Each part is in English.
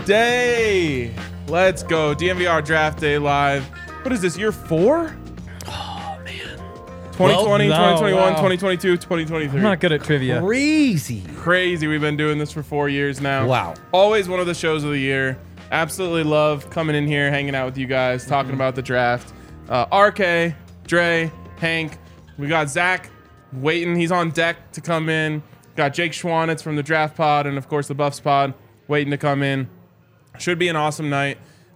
day. Let's go. DNVR Draft Day Live. What is this, year 4? Oh, man. 2020, Well, 2021, wow. 2022, 2023. I'm not good at trivia. Crazy. We've been doing this for 4 years now. Wow. Always one of the shows of the year. Absolutely love coming in here, hanging out with you guys, talking about the draft. RK, Dre, Hank. We got Zach waiting. He's on deck to come in. Got Jake Schwanitz from the Draft Pod and, of course, the Buffs Pod waiting to come in. Should be an awesome night.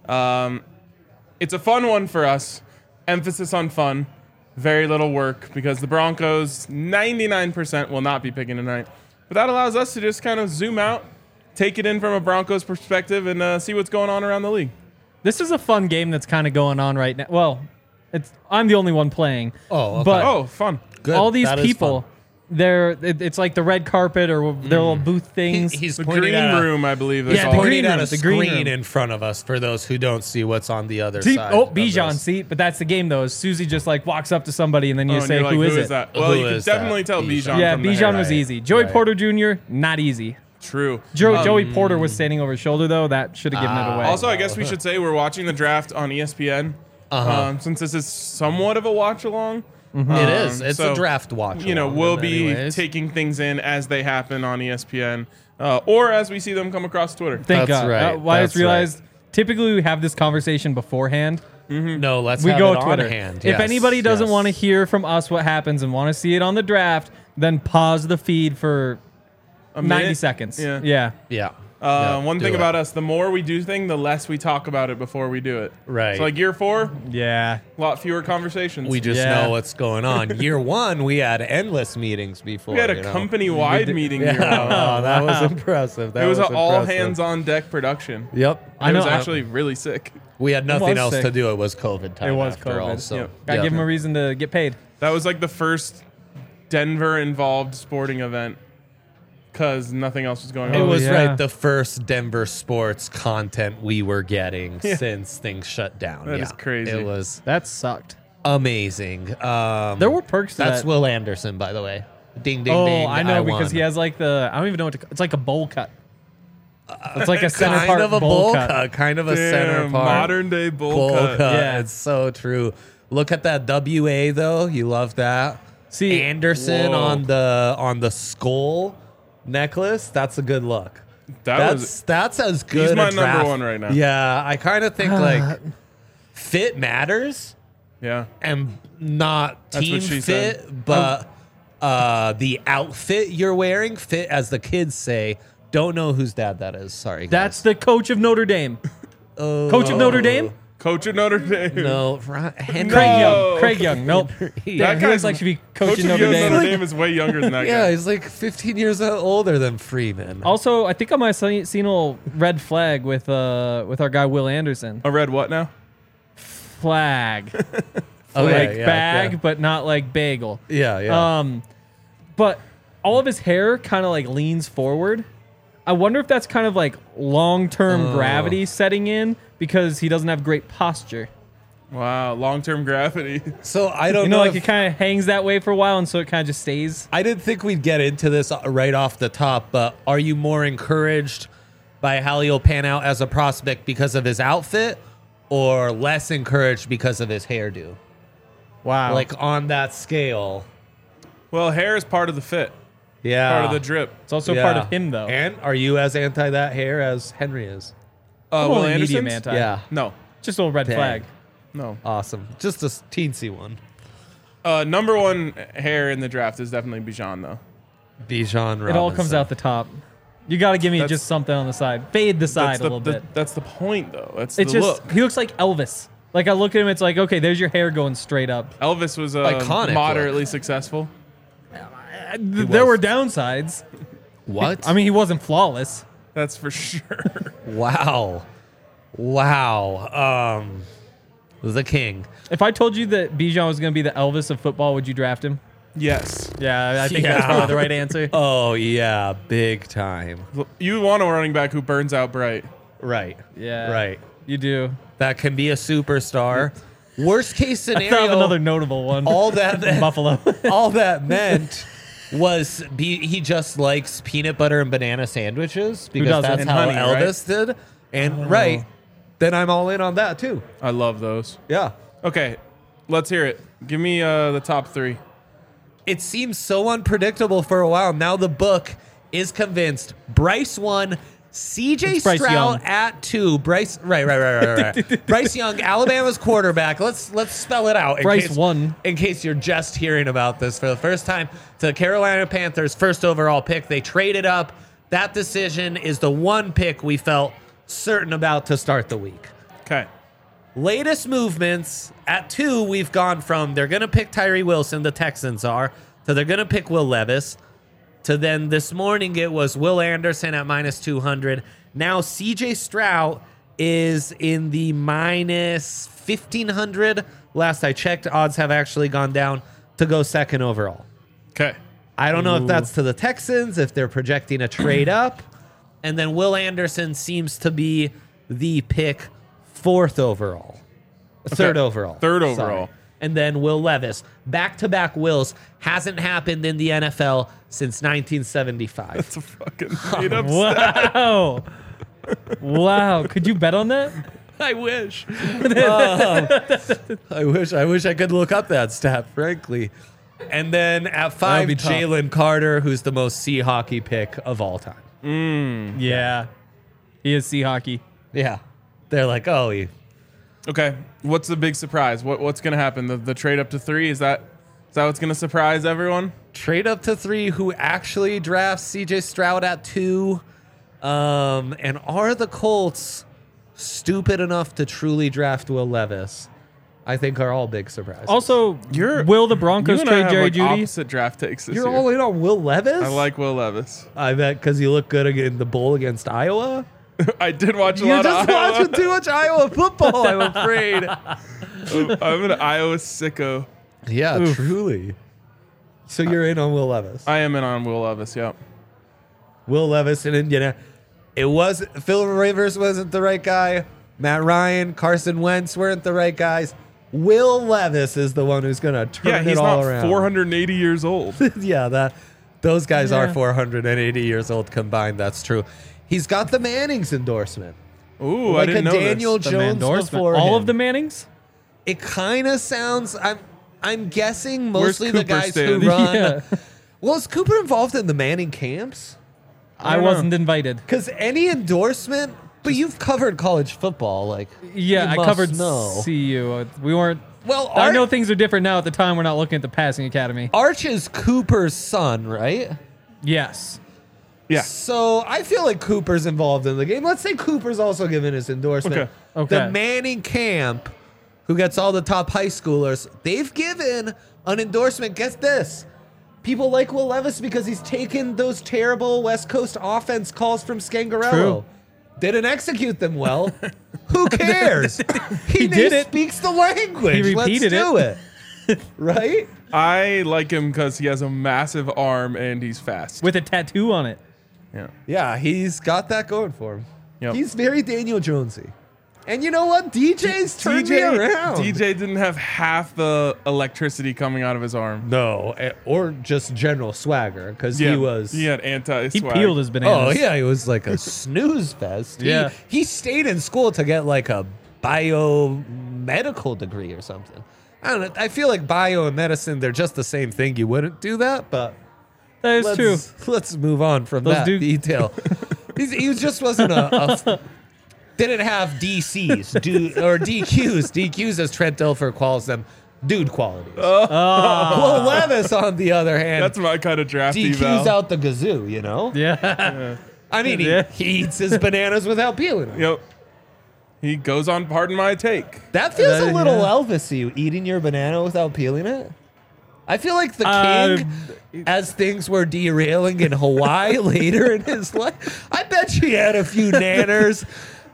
It's a fun one for us. Emphasis on fun. Very little work because the Broncos, 99% will not be picking tonight. But that allows us to just kind of zoom out, take it in from a Broncos perspective, and see what's going on around the league. This is a fun game that's kind of going on right now. Well, I'm the only one playing. Oh, okay. But Oh, fun. Good. all these That is people, fun. it's like the red carpet or their little booth things. He's The pointing green at room, I believe. Is Yeah, the called. green pointing at room, a the green screen room. in front of us for those who don't see what's on the other See, side. oh, of Bijan, this. see, but that's the game though. Is Susie just like walks up to somebody and then you Oh, and say, you're like, who is it? that? Well, Who you can is that? definitely tell Bijan. Yeah, from the Bijan hair. was Right, easy. Joey right. Porter Jr., not easy. True. Joey Porter was standing over his shoulder though. That should have given it away. Also, I guess we should say we're watching the draft on ESPN. Since this is somewhat of a watch along. It is. It's so, a draft watch. You know, along we'll in be many ways. taking things in as they happen on ESPN or as we see them come across Twitter. Thank That's God. right. I just That's realized typically we have this conversation beforehand. No, let's We have go it Twitter. on hand. If Yes, anybody doesn't yes. want to hear from us what happens and want to see it on the draft, then pause the feed for A 90 minute? seconds. Yeah. Yeah. Yeah. One thing about us, the more we do thing, the less we talk about it before we do it. Right. So like year 4, Yeah. a lot fewer conversations. We just Yeah. know what's going on. Year 1, we had endless meetings before. We had a you know? company-wide meeting Yeah. year 1. Oh, that was impressive. That It was an impressive. all-hands-on-deck production. Yep. I It was know. actually really sick. We had nothing was else sick. to do. It was COVID time. It was after COVID. all, so, Yep. Gotta yeah. give them a reason to get paid. That was like the first Denver-involved sporting event because nothing else was going on. It was yeah. right the first Denver sports content we were getting since things shut down. That is crazy. It was That sucked. amazing. There were perks to That's that. Will Anderson, by the way. Ding, ding, Oh, ding. I know because won. he has like I don't even know what it's like a bowl cut. It's like a center kind part of a bowl cut. kind of a Damn, center part. modern-day bowl bowl cut. cut. Yeah. It's so true. Look at that WA though. You love that. See, Anderson Whoa. on the skull necklace. That's a good look. That That's as good. He's my a draft. number one right now. Yeah, I kind of think like fit matters Yeah. and not That's team what she fit, said. but the outfit you're wearing fit, as the kids say. Don't know whose dad that is. Sorry, that's the coach of Notre Dame. guys. Coach of Notre Dame? Coach of Notre Dame. No, Henry. Craig No. Young. Craig Young. Nope. That Damn, he guy's looks like should be Coach coaching of Notre Dame. Notre Dame is way younger than that Yeah, guy. he's like 15 years older than Freeman. Also, I think I might have seen a little red flag with our guy Will Anderson. A red what now? Flag. Oh, like yeah, bag, yeah. but not like bagel. Yeah, yeah. But all of his hair kind of like leans forward. I wonder if that's kind of like long-term gravity setting in because he doesn't have great posture. Wow, long-term gravity. So I don't You know, know. like it kind of hangs that way for a while, and so it kind of just stays. I didn't think we'd get into this right off the top, but are you more encouraged by how he'll pan out as a prospect because of his outfit, or less encouraged because of his hairdo? Wow. Like on that scale. Well, hair is part of the fit, Yeah. part of the drip. it's also Yeah. part of him, though. And are you as anti that hair as Henry is? I'm Will only medium Anderson's? anti. Yeah. No, Just a little red Dang. flag. no. Awesome. Just a teensy one. Number one hair in the draft is definitely Bijan, though. Bijan Robinson. It all comes out the top. You got to give me That's- just something on the side. Fade the side a little bit. That's the point, though. That's It's the just look. he looks like Elvis. Like I look at him, it's like okay, there's your hair going straight up. Elvis was Iconic moderately successul. There were downsides. What? I mean, he wasn't flawless. That's for sure. Wow. Wow. The king. If I told you that Bijan was going to be the Elvis of football, would you draft him? Yes. Yeah, I think that's Yeah. probably the right answer. Oh, yeah. Big time. You want a running back who burns out bright. Right. Yeah, Right. You do. That can be a superstar. Worst case I scenario. thought of another notable one. all that Buffalo. all that meant was he just likes peanut butter and banana sandwiches because doesn't? that's And how honey, right? Elvis did. And then I'm all in on that too. I love those. Yeah. Okay, let's hear it. Give me the top 3. It seems so unpredictable for a while. Now the book is convinced. Bryce 1, CJ It's Bryce Stroud Young. at 2. Bryce, right. Bryce Young, Alabama's quarterback. Let's spell it out. Bryce 1. In case you're just hearing about this for the first time, to the Carolina Panthers' first overall pick. They traded up. That decision is the one pick we felt certain about to start the week. Okay. Latest movements at 2, we've gone from they're going to pick Tyree Wilson, the Texans are, to they're going to pick Will Levis, to then this morning it was Will Anderson at minus 200. Now CJ Stroud is in the minus 1,500. Last I checked, odds have actually gone down to go second overall. Okay. I don't know if that's to the Texans, if they're projecting a trade up. And then Will Anderson seems to be the pick 4th overall. Third overall. Third Sorry. overall. And then Will Levis. Back-to-back Wills hasn't happened in the NFL since 1975. It's a fucking made up stat. Wow. Wow. Could you bet on that? I wish. I wish I could look up that stat, frankly. And then at 5, be tough. Jalen Carter, who's the most sea hockey pick of all time. Yeah. He is sea hockey. Yeah. They're like, oh, Okay. What's the big surprise? What's going to happen? The trade up to 3? Is that what's going to surprise everyone? trade up to 3, who actually drafts CJ Stroud at 2. And are the Colts stupid enough to truly draft Will Levis? I think are all big surprises. Also, will the Broncos You and trade I have Jerry like Jeudy? opposite draft takes this You're year. all in on Will Levis? I like Will Levis. I bet because you look good in the bowl against Iowa. I did watch a You're lot just of Iowa. watching too much Iowa football, I'm afraid. I'm an Iowa sicko. Yeah, truly. So you're in on Will Levis. I am in on Will Levis, yep. Will Levis in Indiana. It was Phil Rivers wasn't the right guy. Matt Ryan, Carson Wentz weren't the right guys. Will Levis is the one who's going to turn He's it all not around. 480 years old. Yeah, those guys are Yeah. 480 years old combined. That's true. He's got the Mannings endorsement. Ooh, Like I didn't a know Daniel this. The Jones endorsement. before All him. of the Mannings? It kind of sounds. I'm guessing Where's mostly the Cooper guys standing? who run. Yeah. Well, is Cooper involved in the Manning camps? I wasn't invited. Because any endorsement, but you've covered college football, like Yeah, you I must covered know. CU. We weren't. Well, I know things are different now. At the time, we're not looking at the passing academy. Arch is Cooper's son, right? Yes. Yeah. So I feel like Cooper's involved in the game. Let's say Cooper's also given his endorsement. Okay. The Manning camp, who gets all the top high schoolers, they've given an endorsement. Guess this. People like Will Levis because he's taken those terrible West Coast offense calls from Scangarello. True. Didn't execute them well. Who cares? He did it. speaks the language. He repeated Let's do it. Right? I like him because he has a massive arm and he's fast. With a tattoo on it. Yeah. Yeah, he's got that going for him. Yep. He's very Daniel Jonesy. And you know what? DJ's turned me around. DJ didn't have half the electricity coming out of his arm. No, or just general swagger, because Yeah, he was. He had anti-swag. He peeled his bananas. Oh yeah, he was like a snooze fest. Yeah. he stayed in school to get like a biomedical degree or something. I don't know. I feel like bio and medicine, they're just the same thing. You wouldn't do that, but That is true. Let's move on from Those that do- detail. He just wasn't a didn't have DCs or DQs. DQs, as Trent Dilfer calls them, dude qualities. Will Levis, on the other hand, That's my kind of draft DQs eval. out the gazoo, you know? Yeah. I mean, Yeah. he eats his bananas without peeling them. Yep. He goes on Pardon My Take. That feels a little Yeah. Elvis-y, eating your banana without peeling it. I feel like the king, as things were derailing in Hawaii later in his life, I bet you had a few nanners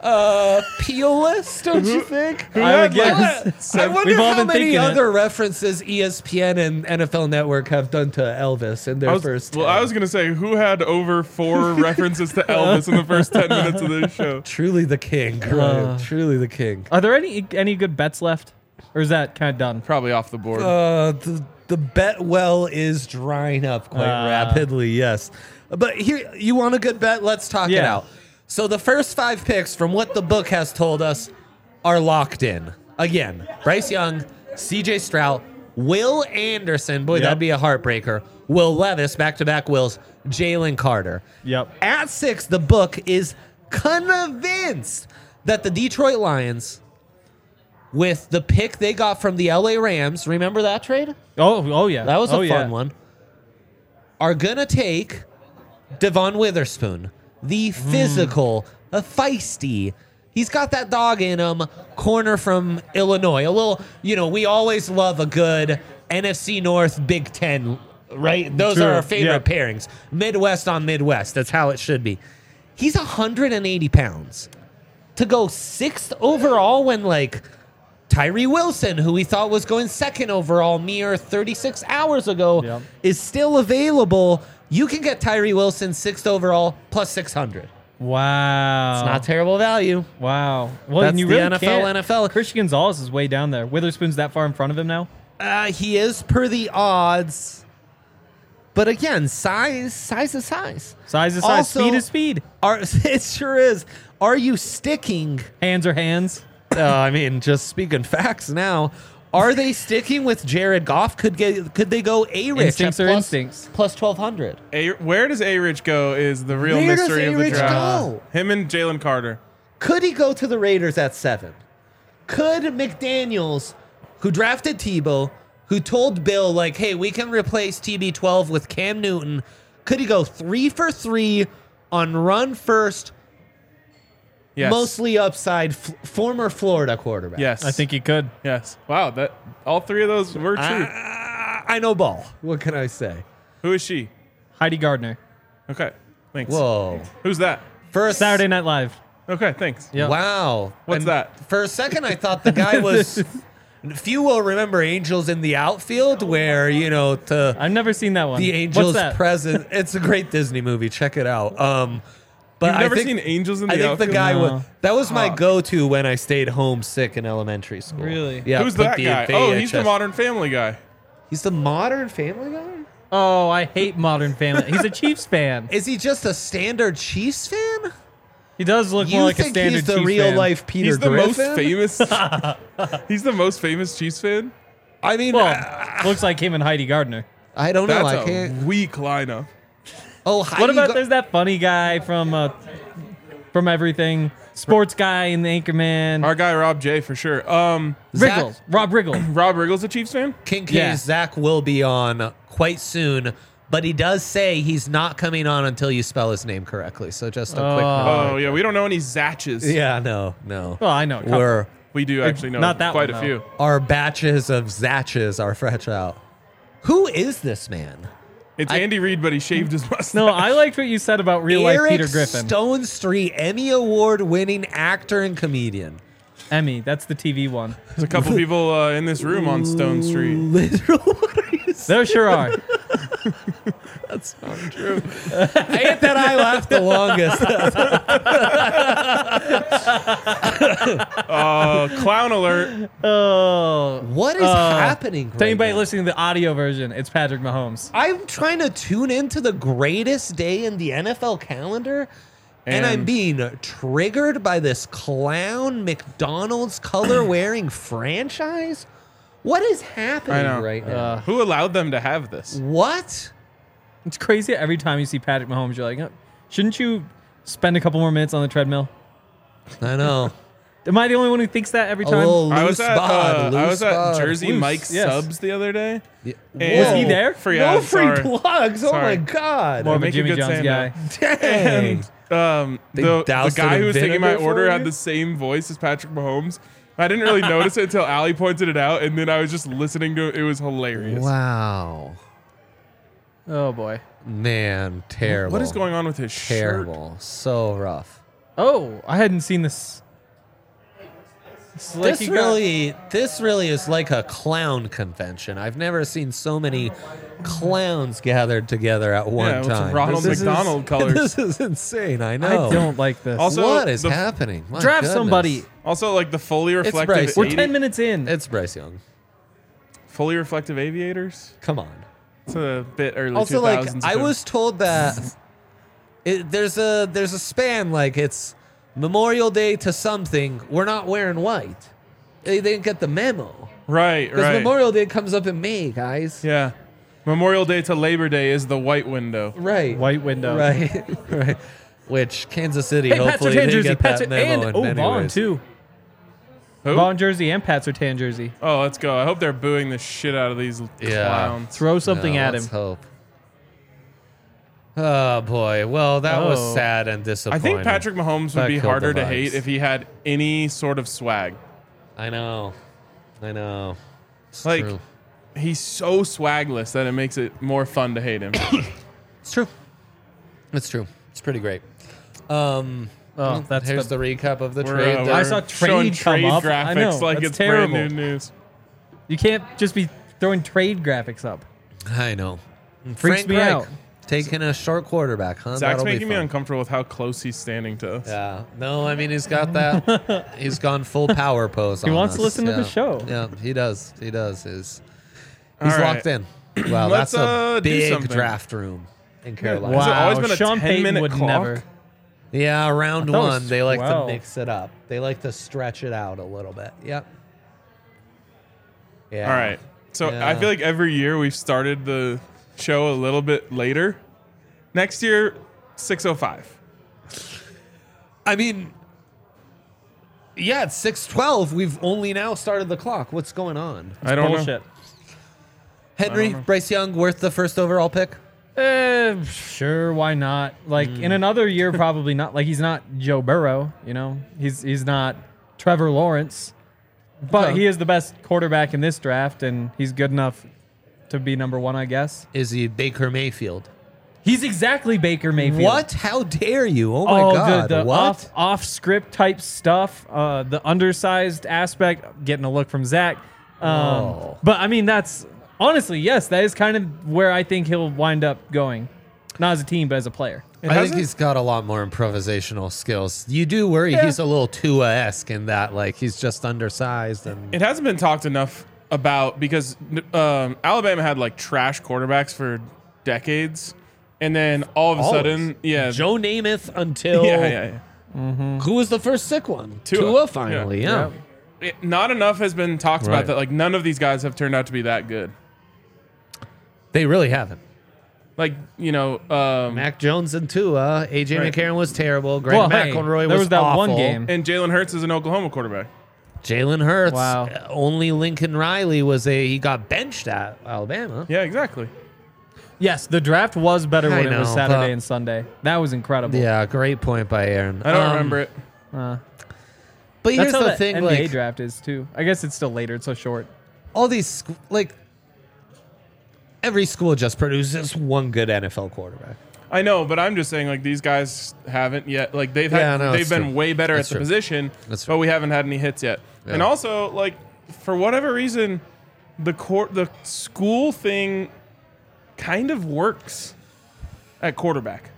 peel-less, don't you think? I would guess. I wonder We've all how been many thinking it. other references ESPN and NFL Network have done to Elvis in their first 10. I was going to say, who had over 4 references to Elvis in the first 10 minutes of this show? Truly the king, Ryan. Truly the king. Are there any good bets left? Or is that kind of done? Probably off the board. The bet well is drying up quite rapidly, yes. But here, you want a good bet? Let's talk it Yeah. out. So the first 5 picks, from what the book has told us, are locked in. Again, Bryce Young, C.J. Stroud, Will Anderson. Boy, that'd be a heartbreaker. Will Levis, back-to-back Wills. Jalen Carter. Yep. At 6, the book is convinced that the Detroit Lions, with the pick they got from the L.A. Rams, remember that trade? Oh yeah. That was a fun one. Are going to take Devon Witherspoon, the physical, feisty. He's got that dog in him, corner from Illinois. A little, we always love a good NFC North Big Ten, right? Those are our favorite pairings. Midwest on Midwest. That's how it should be. He's 180 pounds. To go 6th overall when, Tyree Wilson, who we thought was going 2nd overall mere 36 hours ago, is still available. You can get Tyree Wilson 6th overall plus 600. Wow. It's not terrible value. Wow. Well, That's and you the really NFL. Christian Gonzalez is way down there. Witherspoon's that far in front of him now? He is per the odds. But again, size is size. Size is size. Also, Speed is speed. It sure is. Are you sticking? Hands are hands. Just speaking facts now. Are they sticking with Jared Goff? Could they go A-Rich Instincts are instincts. plus 1,200? Where does A-Rich go is the real Where mystery does of the A-Rich draft. go? Him and Jalen Carter. Could he go to the Raiders at 7? Could McDaniels, who drafted Tebow, who told Bill, hey, we can replace TB12 with Cam Newton, could he go 3 for 3 on run first, Yes. mostly upside, former Florida quarterback? Yes. I think he could. Yes. Wow. That all 3 of those were true. I know ball. What can I say? Who is she? Heidi Gardner. Okay. Thanks. Whoa. Who's that? First Saturday Night Live. Okay. Thanks. Yep. Wow. What's that? For a second, I thought the guy was. Few will remember Angels in the Outfield, where I've never seen that one. the Angels What's that? present. It's a great Disney movie. Check it out. But You've never I think, seen Angels in the I think Outfield? the guy No. that was my go-to when I stayed homesick in elementary school. Really? Yeah. Who's put that the guy? Oh, he's the VHS Modern Family guy. He's the Modern Family guy. Oh, I hate Modern Family. He's a Chiefs fan. Is he just a standard Chiefs fan? He does look more You like a think standard he's the Chiefs real fan. life Peter He's the Griffin? most famous. He's the most famous Chiefs fan. I mean, Well, looks like him and Heidi Gardner. I don't know. I That's can't. a weak lineup. Oh, What Heidi about Gar- there's that funny guy from everything, sports guy in the Anchorman. Our guy Rob J for sure. Riggles, Rob Riggle. Rob Riggle's a Chiefs fan. King K's Yeah. Zach will be on quite soon, but he does say he's not coming on until you spell his name correctly. So just a quick note. Oh yeah, we don't know any Zatches. Yeah, no. Well, I know. a couple. We do actually know Not that quite one, a though. few. Our batches of Zatches are fresh out. Who is this man? It's Andy Reid, but he shaved his mustache. No, I liked what you said about real life Eric Peter Griffin. Stone Street Emmy Award winning actor and comedian. Emmy, that's the TV one. There's a couple people in this room on Stone Street. Literal. What are you saying? There sure are. That's not true. I hate that I laughed the longest. Clown alert. Oh. What is happening? To Right anybody now? listening to the audio version, it's Patrick Mahomes. I'm trying to tune into the greatest day in the NFL calendar, and I'm And- being triggered by this clown McDonald's color wearing franchise. What is happening I know. right now? Who allowed them to have this? What? It's crazy. Every time you see Patrick Mahomes, you're like, shouldn't you spend a couple more minutes on the treadmill? I know. Am I the only one who thinks that every A time? little I was loose at bod, I was loose at bod. Jersey Loose, Mike's yes. Subs the other day. Yeah. And- Was he there? No free sorry. plugs. Oh my Sorry. god. More of a make a Jimmy good John's sando. guy. Dang. The doused it guy in who was taking my vinegar for order you? had the same voice as Patrick Mahomes. I didn't really notice it until Allie pointed it out, and then I was just listening to it. It was hilarious. Wow. Oh, boy. Man, terrible. What is going on with his shirt? Terrible. So rough. Oh, I hadn't seen this. It's like This he got- really is like a clown convention. I've never seen so many clowns gathered together at one Yeah, with time. Ronald This is- McDonald colors. This is insane. I I know. don't like this. Also- What is the- happening? My Draft goodness. somebody. Also, like the fully reflective. Bryce. We're 80 10 minutes in. It's Bryce Young. Fully reflective aviators. Come on. It's a bit early. Also, 2000s I film. was told that there's a span, like it's Memorial Day to something. We're not wearing white. They didn't get the memo. Right. Because Memorial Day comes up in May, guys. Yeah. Memorial Day to Labor Day is the white window. Right. White window. Right. Right. Which Kansas City, Hey, Pats hopefully are tan they jersey. get Pats that are, memo and in many Vaughn ways. too. Who? Vaughn jersey and Pats are tan jersey. Oh, let's go. I hope they're booing the shit out of these clowns. Throw something at let's him. hope. Oh boy. Well, that was Oh. sad and I disappointing. think Patrick Mahomes would That be killed harder the to vibes. hate if he had any sort of swag. I know. It's Like, true. he's so swagless that it makes it more fun to hate him. It's true. It's true. It's pretty great. Oh, that's Here's the recap of the We're, trade. we're I saw showing trade come up. graphics I know, like that's it's terrible. brand new news. You can't just be throwing trade graphics up. I know. Freaks me out. Taking a short quarterback, huh? Zach's That'll be making me fun. uncomfortable with how close he's standing to us. Yeah. No, I mean he's got that. He's gone full power pose. He on wants to us. listen to the show. Yeah, he does. He's All right. locked in. Wow, Let's, that's a do big something. draft room in Carolina. Has it Wow, always been a Sean 10-minute Payton would clock? never. Yeah, round I thought it one was they like to 12. mix it up. They like to stretch it out a little bit. Yep. Yeah. All right. So Yeah. I feel like every year we've started the show a little bit later. Next year, 6:05. I mean, yeah, it's 6:12. We've only now started the clock. What's going on? I don't know. Bullshit. Henry, Bryce Young, worth the first overall pick? Sure, why not? Like in another year, probably not. Like he's not Joe Burrow, you know. He's not Trevor Lawrence, but Okay. he is the best quarterback in this draft, and he's good enough to be number one, I guess. Is he Baker Mayfield? He's exactly Baker Mayfield. What? How dare you? Oh my God. The What? off script type stuff, the undersized aspect, getting a look from Zach. Oh. But I mean, that's honestly, yes, that is kind of where I think he'll wind up going. Not as a team, but as a player. I think he's got a lot more improvisational skills. You do worry he's a little Tua-esque in that, like, he's just undersized. And It hasn't been talked enough about because Alabama had like trash quarterbacks for decades, and then all of a sudden, yeah, Joe Namath until yeah. who was the first sick one? Tua. finally. Yeah. Yeah. Not enough has been talked Right. about that. Like none of these guys have turned out to be that good. They really haven't. Like Mac Jones and Tua. AJ Right. McCarron was terrible. Greg Well, hey, McElroy there was was that awful. one game. and Jalen Hurts is an Oklahoma quarterback. Jalen Hurts. Wow. Only Lincoln Riley he got benched at Alabama. Yeah, exactly. Yes, the draft was better I when it was know, Saturday but- and Sunday. That was incredible. Yeah, great point by Aaron. I don't remember it. But That's here's how the the thing, NBA like draft is too. I guess it's still later. It's so short. all these like every school just produces one good NFL quarterback. I know, but I'm just saying, like these guys haven't yet. Like they've Yeah, no, they've it's been true. way better That's at the true. position, That's true. but we haven't had any hits yet. Yeah. And also, like for whatever reason, the school thing kind of works at quarterback.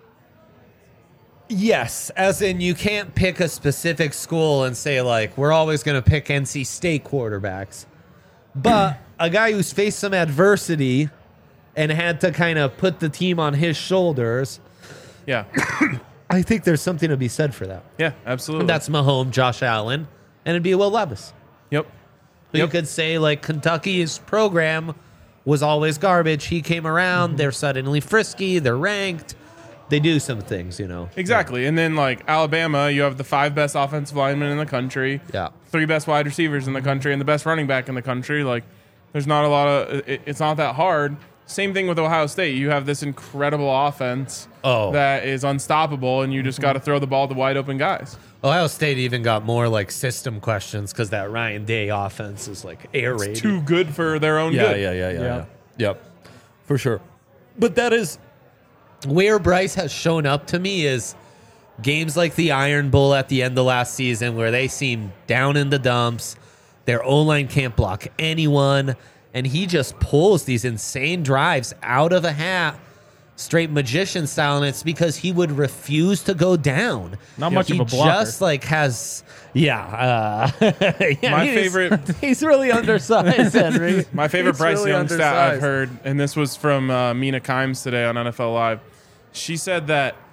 Yes, as in you can't pick a specific school and say like we're always going to pick NC State quarterbacks. But a guy who's faced some adversity and had to kind of put the team on his shoulders, Yeah, I think there's something to be said for that. yeah, absolutely. And that's Mahomes, Josh Allen, and it'd be Will Levis. yep. You could say like Kentucky's program was always garbage. He came around, they're suddenly frisky, they're ranked. They do some things, you know. Exactly. And then like Alabama, you have the 5 best offensive linemen in the country, Yeah. 3 best wide receivers in the country, and the best running back in the country. Like there's not a lot of it's not that hard. Same thing with Ohio State. You have this incredible offense that is unstoppable, and you just got to throw the ball to wide open guys. Ohio State even got more like system questions because that Ryan Day offense is like air raid. Too good for their own good. Yeah. Yep. For sure. But that is where Bryce has shown up to me is games like the Iron Bowl at the end of last season where they seem down in the dumps. Their O-line can't block anyone. And he just pulls these insane drives out of a hat, straight magician style. And it's because he would refuse to go down. Not much He of a blocker. just like has, yeah, My he's- favorite- He's really undersized, Henry. My favorite He's Bryce really Young stat I've undersized. heard, and this was from Mina Kimes today on NFL Live. She said that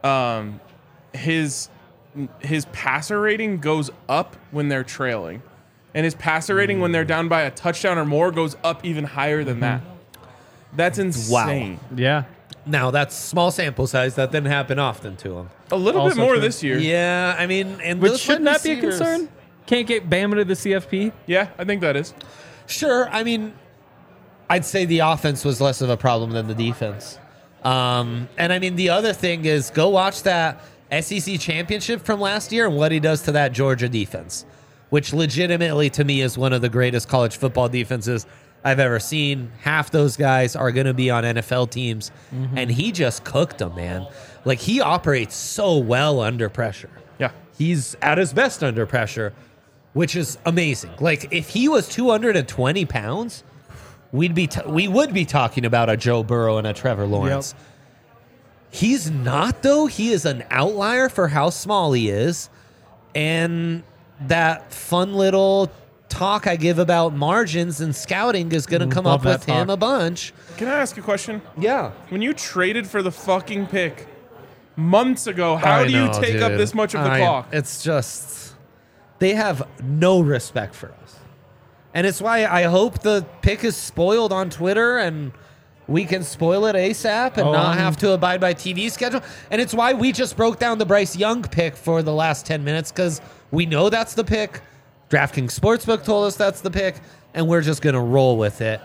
his passer rating goes up when they're trailing, and his passer rating when they're down by a touchdown or more goes up even higher than that. That's insane. Wow. Yeah. Now, that's small sample size. That didn't happen often to him. A little bit Also more true. this year. Yeah, I mean, and But those shouldn't wide that be a receivers- concern? Can't get Bama to the CFP? Yeah, I think that is. Sure. I mean, I'd say the offense was less of a problem than the defense. And I mean, the other thing is go watch that SEC championship from last year and what he does to that Georgia defense, which legitimately to me is one of the greatest college football defenses I've ever seen. Half those guys are going to be on NFL teams, and he just cooked them, man. Like, he operates so well under pressure. Yeah. He's at his best under pressure, which is amazing. Like, if he was 220 pounds, we would be talking about a Joe Burrow and a Trevor Lawrence. He's not, though. He is an outlier for how small he is. And that fun little talk I give about margins and scouting is going to come love up that with him talk. a bunch. Can I ask a question? Yeah. When you traded for the fucking pick months ago, how do you take up this much of the clock? It's just, they have no respect for us. And it's why I hope the pick is spoiled on Twitter and we can spoil it ASAP and not have to abide by TV schedule. And it's why we just broke down the Bryce Young pick for the last 10 minutes, because we know that's the pick. DraftKings Sportsbook told us that's the pick, and we're just going to roll with it.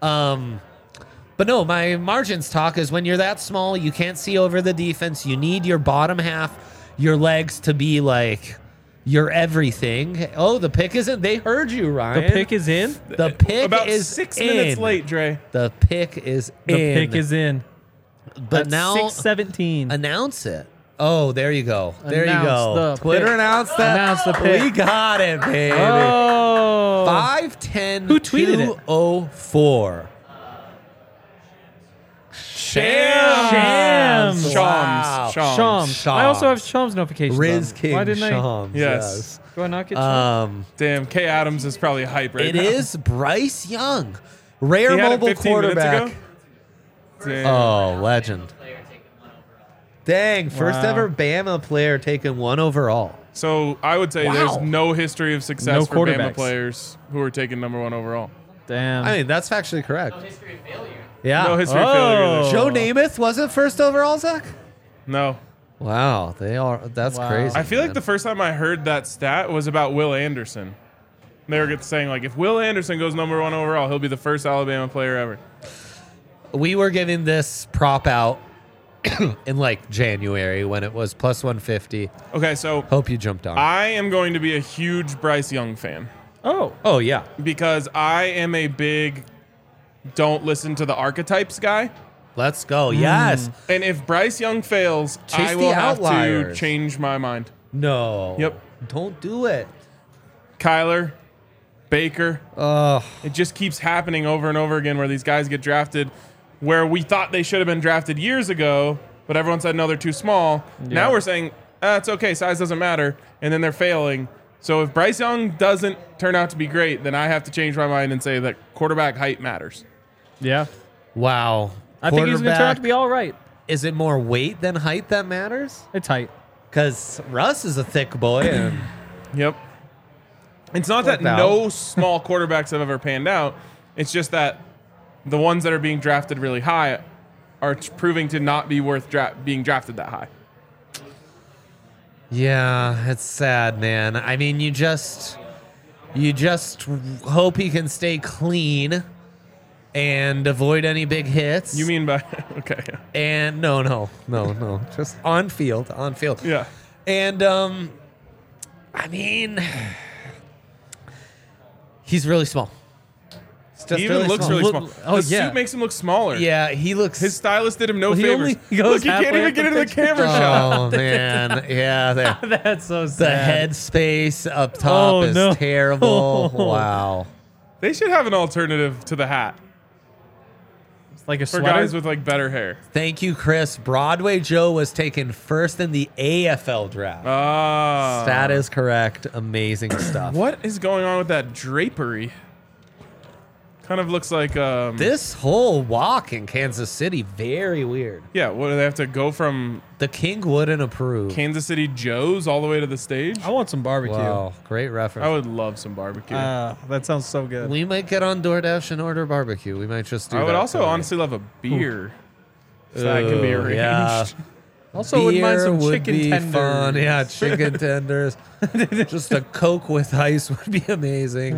But no, my margins talk is when you're that small, you can't see over the defense. You need your bottom half, your legs to be like your everything. Oh, the pick isn't. They heard you, Ryan. The pick is in? The pick About is 6 in. minutes late, Dre. The pick is The in. pick is in. But At now 6:17. announce it. Oh, there you go. There you Announce go. the Twitter pick. announced that. Announce the pick. We got it, baby. Oh. 510 Who tweeted it? 204. Shams. Wow. Shams. I also have Shams notifications. Riz on. King Why didn't I? Shams. Yes. Do I not get Shams? Damn, Kay Adams is probably hype right It now. is Bryce Young. Rare He had it mobile 15 minutes quarterback. ago? Damn. Oh, legend. Dang, first Wow. ever Bama player taken 1 overall. So I would say there's Wow. no history of success No for Bama quarterbacks. players who are taken number 1 overall. Damn. I mean, that's factually correct. Yeah. No history of Oh. failure. There. Joe Namath wasn't first overall, Zach? No. Wow, they are. That's Wow. crazy. I feel like man. the first time I heard that stat was about Will Anderson. They were saying, like, if Will Anderson goes number 1 overall, he'll be the first Alabama player ever. We were giving this prop out in like January when it was plus 150. Okay, so Hope you jumped on. I am going to be a huge Bryce Young fan Oh. Oh yeah. because I am a big don't listen to the archetypes guy. Let's go. Yes. And if Bryce Young fails, Chase I the will have to outliers. change my mind. No. Yep. Don't do it. Kyler, Baker, Oh, it just keeps happening over and over again where these guys get drafted where we thought they should have been drafted years ago, but everyone said, no, they're too small. Now we're saying, it's okay, size doesn't matter, and then they're failing. So if Bryce Young doesn't turn out to be great, then I have to change my mind and say that quarterback height matters. Yeah. wow. I think he's going to turn out to Quarterback, be all right. Is it more weight than height that matters? It's tight. Because Russ is a thick boy. And Yep. It's not that Worked out. no small quarterbacks have ever panned out. It's just that the ones that are being drafted really high are proving to not be worth being drafted that high. yeah, it's sad, man. I mean, you just hope he can stay clean and avoid any big hits. You mean by okay? And no, just on field. Yeah. And I mean, he's really small. It's just He even looks really small. Oh, the yeah. suit makes him look smaller. Yeah, he looks. His stylist did him no Well, he favors. only goes Look, he can't halfway even up get the into the picture. camera shot. oh man, yeah. That's so The sad. head space up top Oh, is no. terrible. Wow. They should have an alternative to the hat It's like a for sweater. guys with like better hair. Thank you, Chris. Broadway Joe was taken first in the AFL draft. Ah. That is correct. Amazing stuff. What is going on with that drapery? Kind of looks like This whole walk in Kansas City, very weird. yeah. What do they have to go from The king wouldn't approve. Kansas City Joe's all the way to the stage? I want some barbecue. Wow, great reference. I would love some barbecue. That sounds so good. We might get on DoorDash and order barbecue. We might just do I that. would also tonight. honestly love a beer. So that can be Ooh, arranged. yeah. Also, wouldn't mind Beer some would chicken be tenders. fun. Yeah, chicken tenders. Just a Coke with ice would be amazing.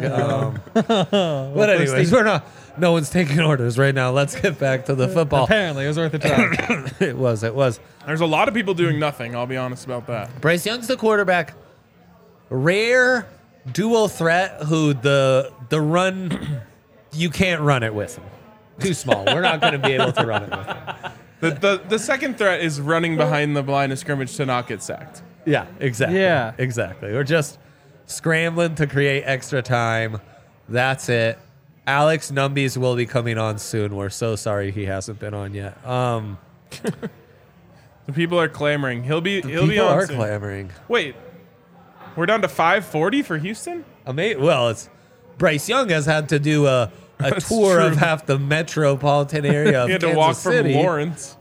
But anyways, no one's taking orders right now. Let's get back to the football. Apparently, it was worth a try. It was. There's a lot of people doing nothing. I'll be honest about that. Bryce Young's the quarterback. Rare dual threat who the run, you can't run it with him. Too small. We're not going to be able to run it with him. The second threat is running behind the line of scrimmage to not get sacked. Yeah, exactly. Yeah. Exactly. We're just scrambling to create extra time. That's it. Alex Numbies will be coming on soon. We're so sorry he hasn't been on yet. The people are clamoring. He'll be People on are soon. clamoring. Wait, we're down to 540 for Houston? Well, it's Bryce Young has had to do a That's tour of true. half the metropolitan area of He had to Kansas walk City. from Lawrence.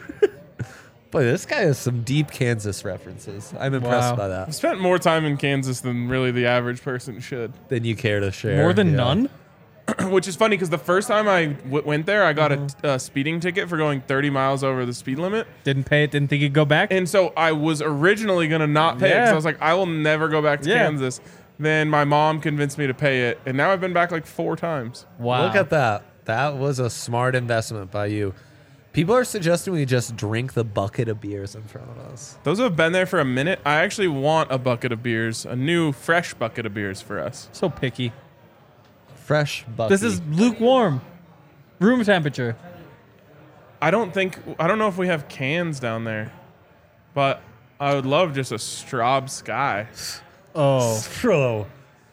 Boy, this guy has some deep Kansas references. I'm impressed Wow. by I that. spent more time in Kansas than really the average person should. Than you care to share. More than Yeah. none? Which is funny because the first time I went there, I got a speeding ticket for going 30 miles over the speed limit. Didn't pay it, didn't think you'd go back? And so I was originally going to not pay it because Yeah. I was like, I will never go back to Yeah. Kansas. Then my mom convinced me to pay it. And now I've been back like 4 times. Wow. Look at that. That was a smart investment by you. People are suggesting we just drink the bucket of beers in front of us. Those who have been there for a minute, I actually want a bucket of beers, a new fresh bucket of beers for us. So picky. Fresh bucket. This is lukewarm. Room temperature. I don't know if we have cans down there, but I would love just a Straub Sky. Oh. Bro.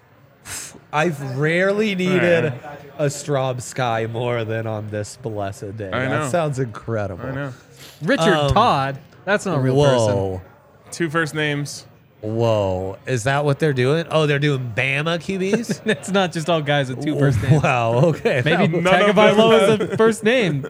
I've rarely needed a Straub Sky more than on this blessed day. I know. That sounds incredible. I know. Richard Todd. That's not a real person. Whoa. 2 first names. Whoa. Is that what they're doing? Oh, they're doing Bama QBs? It's not just all guys with 2 first names. Wow. Okay. Maybe None of them Tagovailoa is a first name.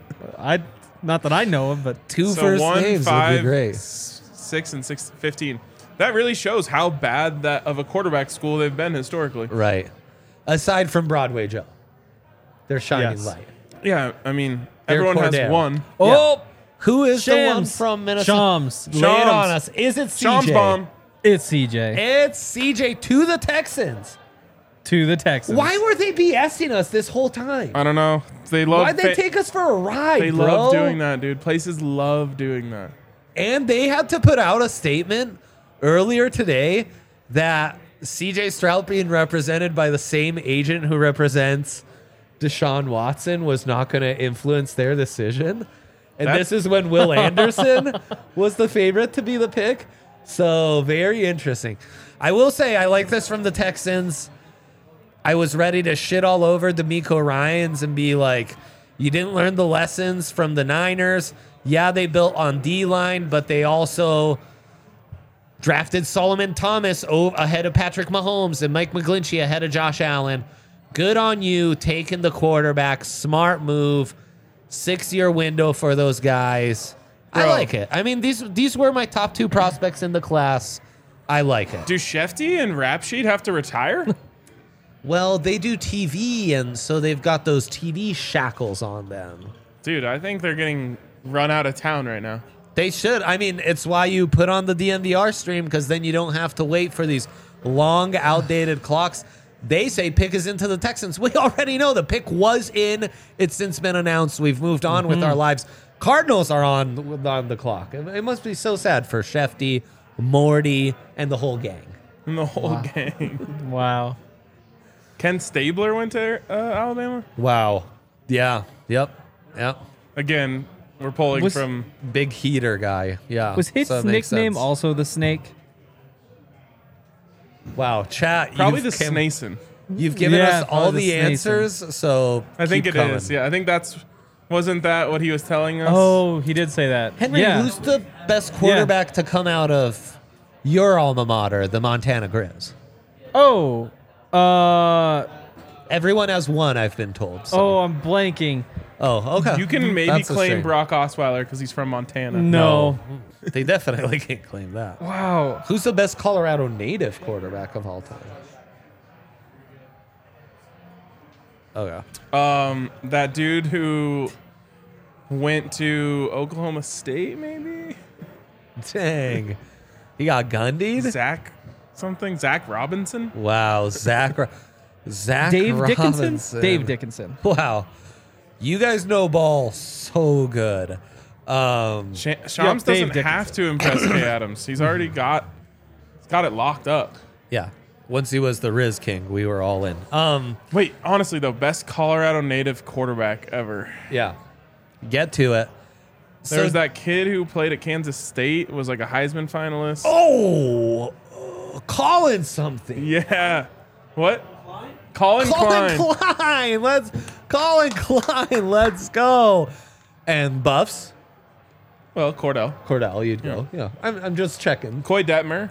Not that I know of, but Two So first 1, names 5, would be great. 6, and 6, 15. That really shows how bad that of a quarterback school they've been historically. Right. Aside from Broadway Joe. They're shining Yes. light. Yeah, I mean, They're everyone has Cordell. one. Oh, who is the one Shams from Minnesota? Shams. Lay it on Shams. us. Is it CJ? Shams bomb. It's CJ It's CJ to the Texans. to the Texans. Why were they BSing us this whole time? I don't know. They love. Why'd they take us for a ride, They bro? love doing that, dude. Places love doing that. And they had to put out a statement earlier today that CJ Stroud being represented by the same agent who represents Deshaun Watson was not going to influence their decision. And That- this is when Will Anderson was the favorite to be the pick. So very interesting. I will say I like this from the Texans. I was ready to shit all over D'Amico Ryans and be like, you didn't learn the lessons from the Niners. Yeah, they built on D-line, but they also drafted Solomon Thomas ahead of Patrick Mahomes and Mike McGlinchey ahead of Josh Allen. Good on you taking the quarterback. Smart move. 6-year window for those guys. I Bro. like it. I mean, these were my top 2 prospects in the class. I like it. Do Shefty and Rap Sheet have to retire? Well, they do TV, and so they've got those TV shackles on them. Dude, I think they're getting run out of town right now. They should. I mean, it's why you put on the DNVR stream, because then you don't have to wait for these long, outdated clocks. They say pick is into the Texans. We already know the pick was in. It's since been announced. We've moved on with our lives. Cardinals are on the clock. It must be so sad for Shefty, Morty, and the whole gang. And the whole gang. Wow. Ken Stabler went to Alabama? Wow. Yeah. Yep. Again, we're pulling Was- from... Big heater guy. Yeah. Was his so it makes nickname sense. also the Snake? Wow, chat. Probably the you've Snason. You've given Yeah, us all probably the the Snason. answers, so I think keep it is. coming. Yeah, I think that's... Wasn't that what he was telling us? Oh, he did say that. Henry, yeah. who's the best quarterback to come out of your alma mater, the Montana Grizz? Oh, Everyone has one, I've been told. So. Oh, I'm blanking. Oh, okay. You can maybe That's a claim shame. Brock Osweiler because he's from Montana. No. They definitely can't claim that. Wow. Who's the best Colorado native quarterback of all time? Okay. That dude who went to Oklahoma State, maybe? Dang. He got Gundied? Zach Robinson? Wow. Zach Dave Robinson. Dickinson? Dave Dickinson. Wow. You guys know ball so good. Shams Dave doesn't Dickinson. have to impress Kay Adams. He's already got it locked up. Yeah. Once he was the Riz King, we were all in. Wait, honestly though, best Colorado native quarterback ever. Yeah. Get to it. There's that kid who played at Kansas State, was like a Heisman finalist. Oh, Colin something. Yeah. What? Colin Colin Klein. Colin Klein. Let's go. And Buffs. Well, Cordell, you'd go. Yeah. I'm just checking. Coy Detmer.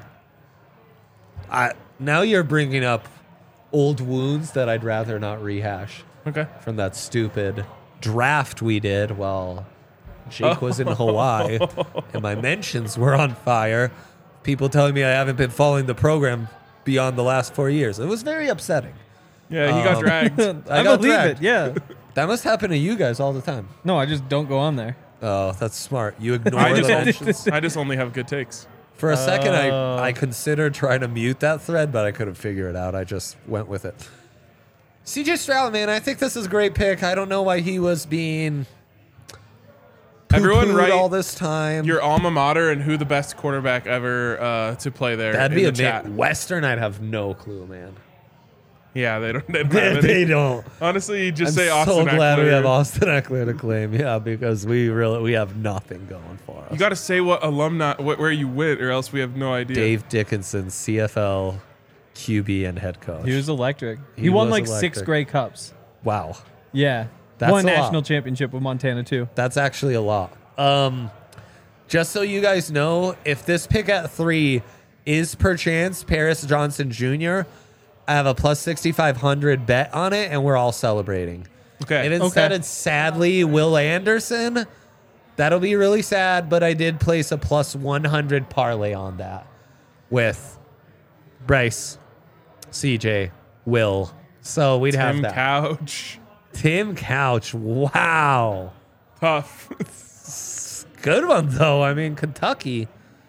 Now you're bringing up old wounds that I'd rather not rehash Okay. from that stupid draft we did while Jake was in Hawaii and my mentions were on fire. People telling me I haven't been following the program beyond the last 4 years. It was very upsetting. Yeah, he got dragged. I got believe dragged. it. Yeah. That must happen to you guys all the time. No, I just don't go on there. Oh, that's smart. You ignore I the mentions. just only have good takes. For a second, I considered trying to mute that thread, but I couldn't figure it out. I just went with it. CJ Stroud, man, I think this is a great pick. I don't know why he was being Everyone poo-pooed write all this time. your alma mater and who the best quarterback ever to play there. That'd in be the a chat. Western. I'd have no clue, man. Yeah, they don't have any. They don't. Honestly, just I'm say Austin so glad we Eckler. have Austin Eckler to claim. Yeah, because we have nothing going for us. You got to say what alumni, where you went, or else we have no idea. Dave Dickinson, CFL, QB, and head coach. He was electric. He He won was like electric. 6 Grey Cups. Wow. Yeah. That's Won a lot. national championship with Montana too. That's actually a lot. Just so you guys know, if this pick at 3 is perchance Paris Johnson Jr., I have a plus 6,500 bet on it, and we're all celebrating. Okay. And instead, it's sadly Will Anderson. That'll be really sad, but I did place a plus 100 parlay on that with Bryce, CJ, Will. So we'd have Tim that. Couch. Tim Couch. Wow. Tough. Good one, though. I mean, Kentucky.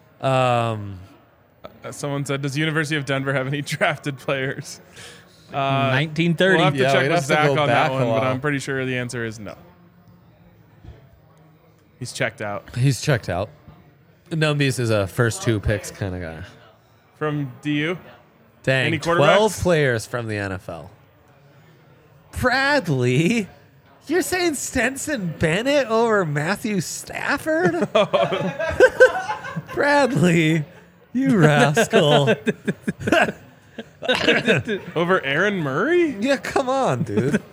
Someone said, does University of Denver have any drafted players? 1930. We'll have to Yeah, check we'd with have to Zach go on that back a one, but while. I'm pretty sure the answer is no. He's checked out. He's checked out. Numbies is a first 2 picks kind of guy. From DU? Dang, Any 12 quarterbacks? players from the NFL. Bradley? You're saying Stenson Bennett over Matthew Stafford? Bradley, you rascal. Over Aaron Murray? Yeah, come on, dude.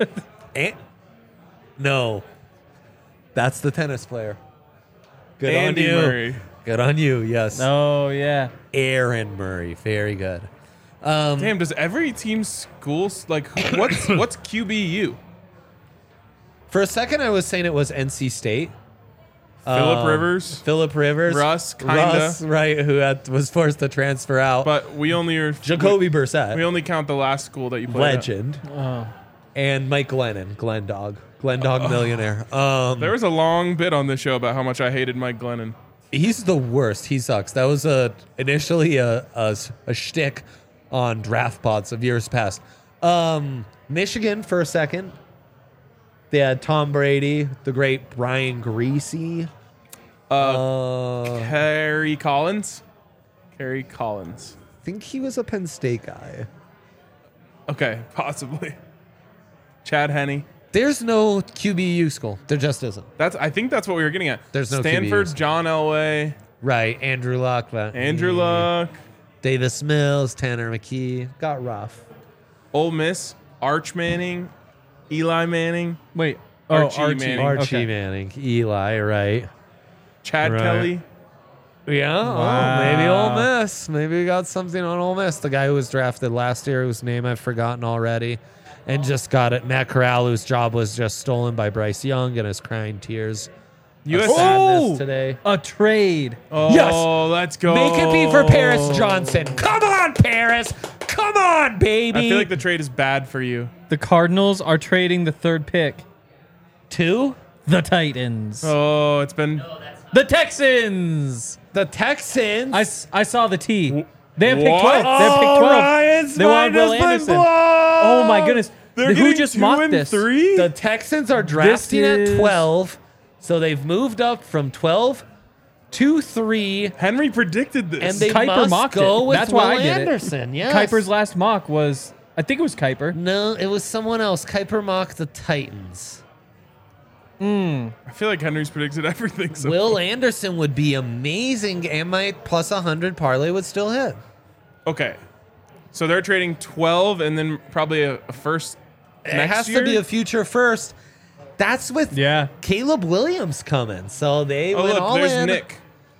No. That's the tennis player. Good Andy on you. Murray. Good on you, yes. Oh yeah. Aaron Murray, very good. Damn, does every team schools, like, what's QBU? For a second, I was saying it was NC State. Phillip Rivers? Phillip Rivers. Russ, kinda. Russ, right, who was forced to transfer out. But we only Jacoby Brissett, we only count the last school that you played legend. And Mike Glennon, Glendog millionaire. There was a long bit on this show about how much I hated Mike Glennon. He's the worst. He sucks. That was initially a shtick on draft pods of years past. Michigan for a second. They had Tom Brady, the great Brian Greasy. Kerry Collins? Kerry Collins. I think he was a Penn State guy. Okay, possibly. Chad Henne. There's no QBU school. There just isn't. I think that's what we were getting at. There's no Stanford, QBUs. John Elway, Right. Andrew Luck. Andrew Luck, Davis Mills, Tanner McKee. Got rough. Ole Miss, Arch Manning, Eli Manning, Wait. Archie Manning. Archie Okay. Manning. Eli, right. Chad Right. Kelly. Yeah. Wow. Oh, maybe Ole Miss. Maybe we got something on Ole Miss. The guy who was drafted last year, whose name I've forgotten already. and just got it. Matt Corral, whose job was just stolen by Bryce Young, and is crying tears. US Sadness today. A trade. Oh, Yes. let's go. Make it be for Paris Johnson. Come on, Paris. Come on, baby. I feel like the trade is bad for you. The Cardinals are trading the 3rd pick. 2? The Titans. Oh, it's been... The Texans. The Texans. I saw the T. They have pick What? 12. They have pick 12. Ryan's They want mind Will has been Anderson. blown. Oh my goodness. They're Who getting just 2 mocked and this? 3? The Texans are drafting is- at 12, so they've moved up from 12 to 3, Henry predicted this. and they Kuiper must mocked go it. with That's why Will I did Anderson. it. Yes. Kuiper's last mock was, I think it was Kuiper. No, it was someone else. Kuiper mocked the Titans. I feel like Henry's predicted everything. So Will Anderson would be amazing, and my plus 100 parlay would still hit. Okay. So they're trading 12 and then probably a first It next has year? to be a future first. That's with Yeah. Caleb Williams coming, so they Oh, went look, all there's in. Nick.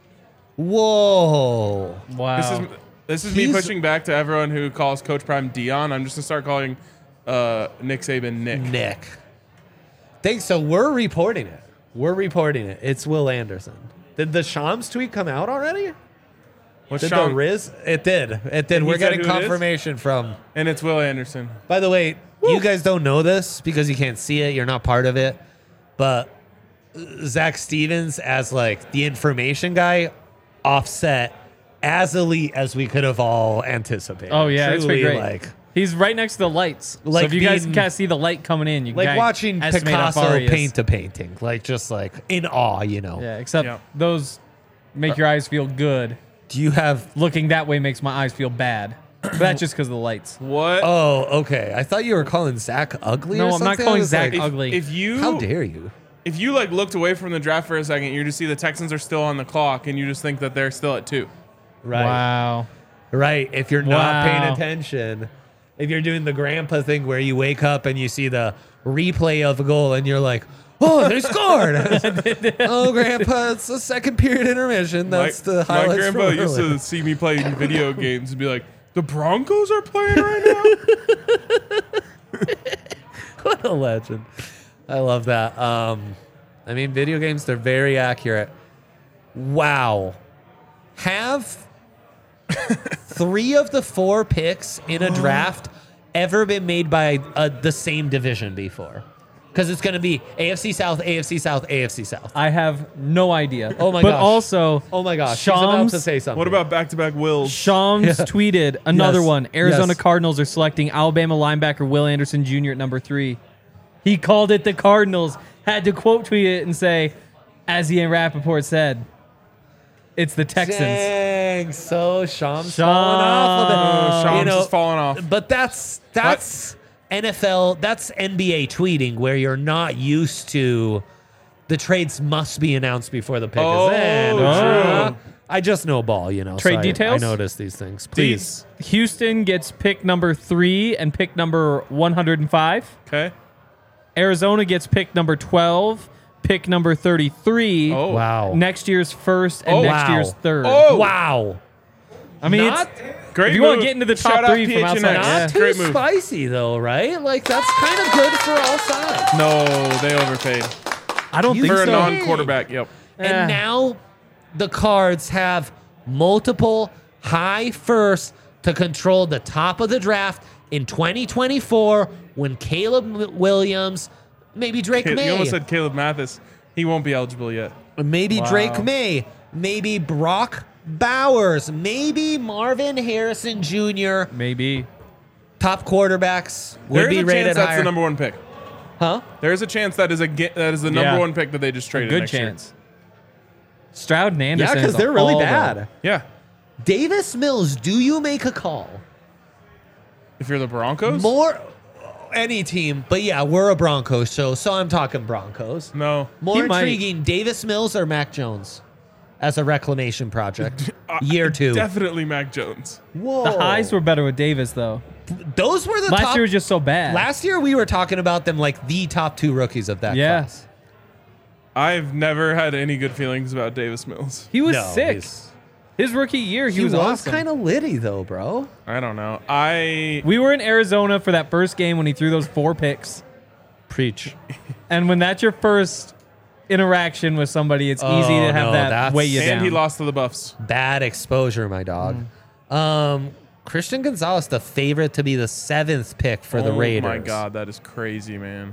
Whoa. Wow. This is me He's- pushing back to everyone who calls Coach Prime Dion. I'm just going to start calling Nick Saban Nick. Nick. Thanks. So we're reporting it. It's Will Anderson. Did the Shams tweet come out already? What's Did Sean? the Riz? It did. And We're he said getting who it is? confirmation from. And it's Will Anderson. By the way, you guys don't know this because you can't see it. You're not part of it. But Zach Stevens, as like the information guy, offset as elite as we could have all anticipated. Oh, yeah, it's been Truly, great. Like, He's right next to the lights. Like so if you guys being- can't see the light coming in, you can like kinda watching estimate how far Picasso he is. paint a painting. Like, just like in awe, you know. Yeah, except Yeah. those make your eyes feel good. Do you have. Looking that way makes my eyes feel bad. But that's just because of the lights. What? Oh, okay. I thought you were calling Zach ugly No, or I'm something. not calling I was Zach like, ugly. If you How dare you? if you like looked away from the draft for a second, you just see the Texans are still on the clock, and you just think that they're still at 2. Right. Wow. Right. If you're not paying Wow. attention, if you're doing the grandpa thing where you wake up and you see the replay of a goal and you're like, oh, they scored. Oh, grandpa, it's the second period intermission. That's the my highlights grandpa from used earlier. to see me playing video games and be like, "The Broncos are playing right now." What a legend. I love that. I mean, video games, they're very accurate. Wow. Have 3 of the 4 picks in a draft ever been made by the same division before? Because it's going to be AFC South, AFC South, AFC South. I have no idea. Oh my but gosh. also, Oh my gosh. She's about Shams, to say something. What about back-to-back wills? Shams tweeted another Yes. one. Arizona Yes. Cardinals are selecting Alabama linebacker Will Anderson Jr. at number 3. He called it the Cardinals. Had to quote tweet it and say, as Ian Rappaport said, it's the Texans. Dang. So Shams falling off of it. Shams is falling off. But that's NFL, that's NBA tweeting where you're not used to the trades must be announced before the pick Oh, is in. true. I just know ball, you know. Trade so details? I notice these things. Please. Houston gets pick number 3 and pick number 105. Okay. Arizona gets pick number 12, pick number 33. Oh. Wow. Next year's first and Oh, next wow. year's third. Oh. Wow. I mean, Not, Great If you wanna move. get into the top Shout out 3 from PHNX. outside, not yeah. too Great move. spicy, though, right? Like, that's kind of good for all sides. No, they overpaid. I don't You think For a so. non-quarterback, yep. Yeah. And now the Cards have multiple high firsts to control the top of the draft in 2024 when Caleb Williams, maybe Drake You May, almost said Caleb Mathis. He won't be eligible yet. maybe Wow. Drake May, maybe Brock Bowers, maybe Marvin Harrison Jr. Maybe. Top quarterbacks would There's be a rated chance that's higher. the number 1 pick. Huh? There's a chance that is the number Yeah. 1 pick that they just traded. Good next chance. Stroud and Yeah, Anderson. because is they're really all bad. over. Year. Yeah. Davis Mills, do you make a call? If you're the Broncos, More any team, but yeah, we're a Broncos show, so I'm talking Broncos. no. More He might. intriguing, Davis Mills or Mac Jones as a reclamation project. Year 2. Definitely Mac Jones. Whoa. The highs were better with Davis, though. Those were the Last top. year was just so bad. Last year we were talking about them like the top 2 rookies of that Yeah. class. I've never had any good feelings about Davis Mills. He was No, 6. His rookie year, he was awesome. kind of litty though, bro. I don't know. We were in Arizona for that first game when he threw those 4 picks. Preach. And when that's your first interaction with somebody, it's easy to have that weigh you down. And he lost to the Buffs. Bad exposure, my dog. Christian Gonzalez, the favorite to be the 7th pick for the Raiders. Oh my God, that is crazy, man.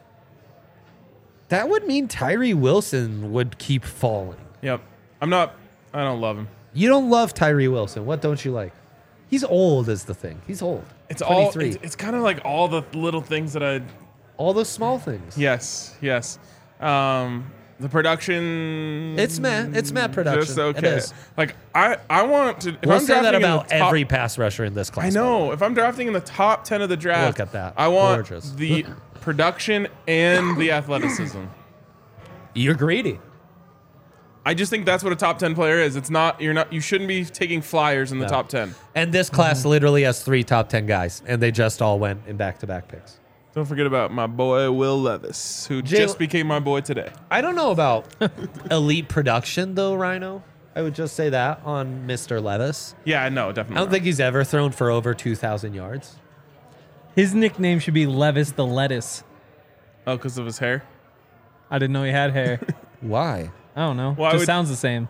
That would mean Tyree Wilson would keep falling. Yep. I don't love him. You don't love Tyree Wilson. What don't you like? He's old is the thing. He's old. It's 23. all. It's kind of like all the little things that I. All the small things. Yes. The production. It's Matt production. Just okay. It is. Like I want to. If We'll I'm say that drafting in the about top- every pass rusher in this class. I know. If I'm drafting in the top 10 of the draft, Look at that. I want Gorgeous. the production and the athleticism. You're greedy. I just think that's what a top 10 player is. It's not. You shouldn't be taking flyers in the top 10. And this class literally has 3 top 10 guys, and they just all went in back-to-back picks. Don't forget about my boy Will Levis, who just became my boy today. I don't know about elite production, though, Rhino. I would just say that on Mr. Levis. Yeah, no, I definitely. don't think he's ever thrown for over 2,000 yards. His nickname should be Levis the Lettuce. Oh, because of his hair. I didn't know he had hair. Why? I don't know. Why Just would- sounds the same.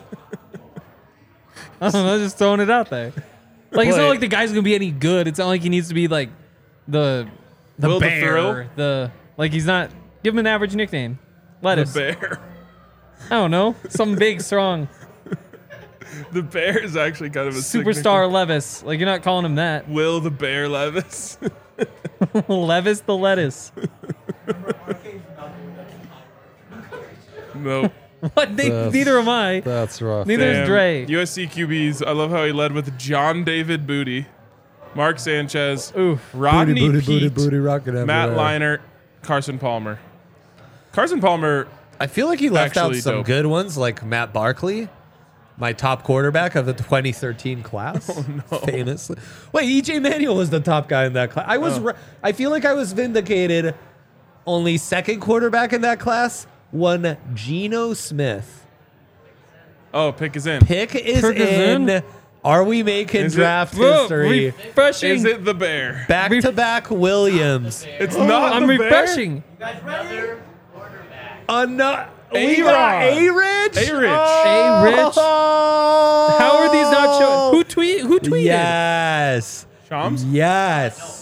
I don't know. Just throwing it out there. Like, it's not like the guy's going to be any good. It's not like he needs to be like the Will the bear. Thrill? Like, he's not. Give him an average nickname. Lettuce. The bear. I don't know. Something big, strong. The bear is actually kind of a sick Superstar Levis. Like, you're not calling him that. nickname. Will the Bear Levis. Levis the Lettuce. Nope. What? Neither am I. That's rough. Neither is Dre. USC QBs. I love how he led with John David Booty, Mark Sanchez, Oof. Rodney Peete, rocking Matt Leinart, Carson Palmer. Carson Palmer. I feel like he left out Actually some dope. good ones, like Matt Barkley, my top quarterback of the 2013 class. Oh, no. Famously. Wait, EJ Manuel was the top guy in that class. I feel like I was vindicated. Only second quarterback in that class, one Geno Smith. Oh, pick is in. Pick is Pick is in. in. Are we making Is it- draft Whoa, history? refreshing. Is it the Bear? Back-to-back Williams. It's not I'm the Bear. refreshing. We got A-Rich? A-Rich. A-Rich. How are these not showing? Who tweeted? Yes. Shams? Yes.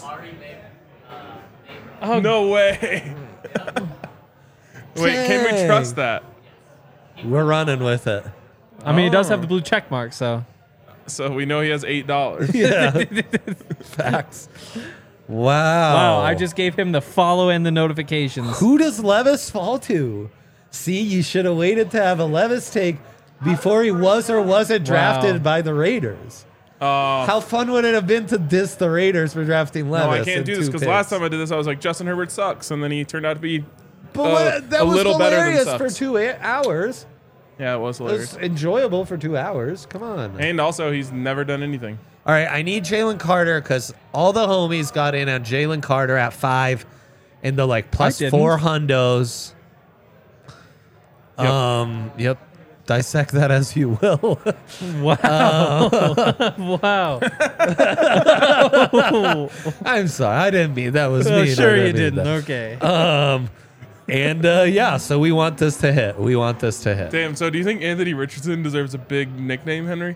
Oh, No way. Wait, can we Dang. trust that? We're running with it. I mean, he does have the blue check mark, so. So we know he has $8. Yeah. Facts. Wow. Wow, I just gave him the follow and the notifications. Who does Levis fall to? See, you should have waited to have a Levis take before he was or wasn't drafted Wow. by the Raiders. How fun would it have been to diss the Raiders for drafting Levis? No, I can't in do this 2 because picks? last time I did this, I was like, Justin Herbert sucks. And then he turned out to be But that a was little better than hilarious for sucks. 2 hours. Yeah, it was It hilarious. was enjoyable for 2 hours. Come on. And also, he's never done anything. All right, I need Jalen Carter because all the homies got in on Jalen Carter at 5 in the like plus didn't. 4 hundos. Yep. Dissect that as you will. Wow. Wow. I'm sorry, I didn't mean that was Oh, me. sure you didn't. Okay. And yeah, so we want this to hit. We want this to hit. Damn, so do you think Anthony Richardson deserves a big nickname, Henry?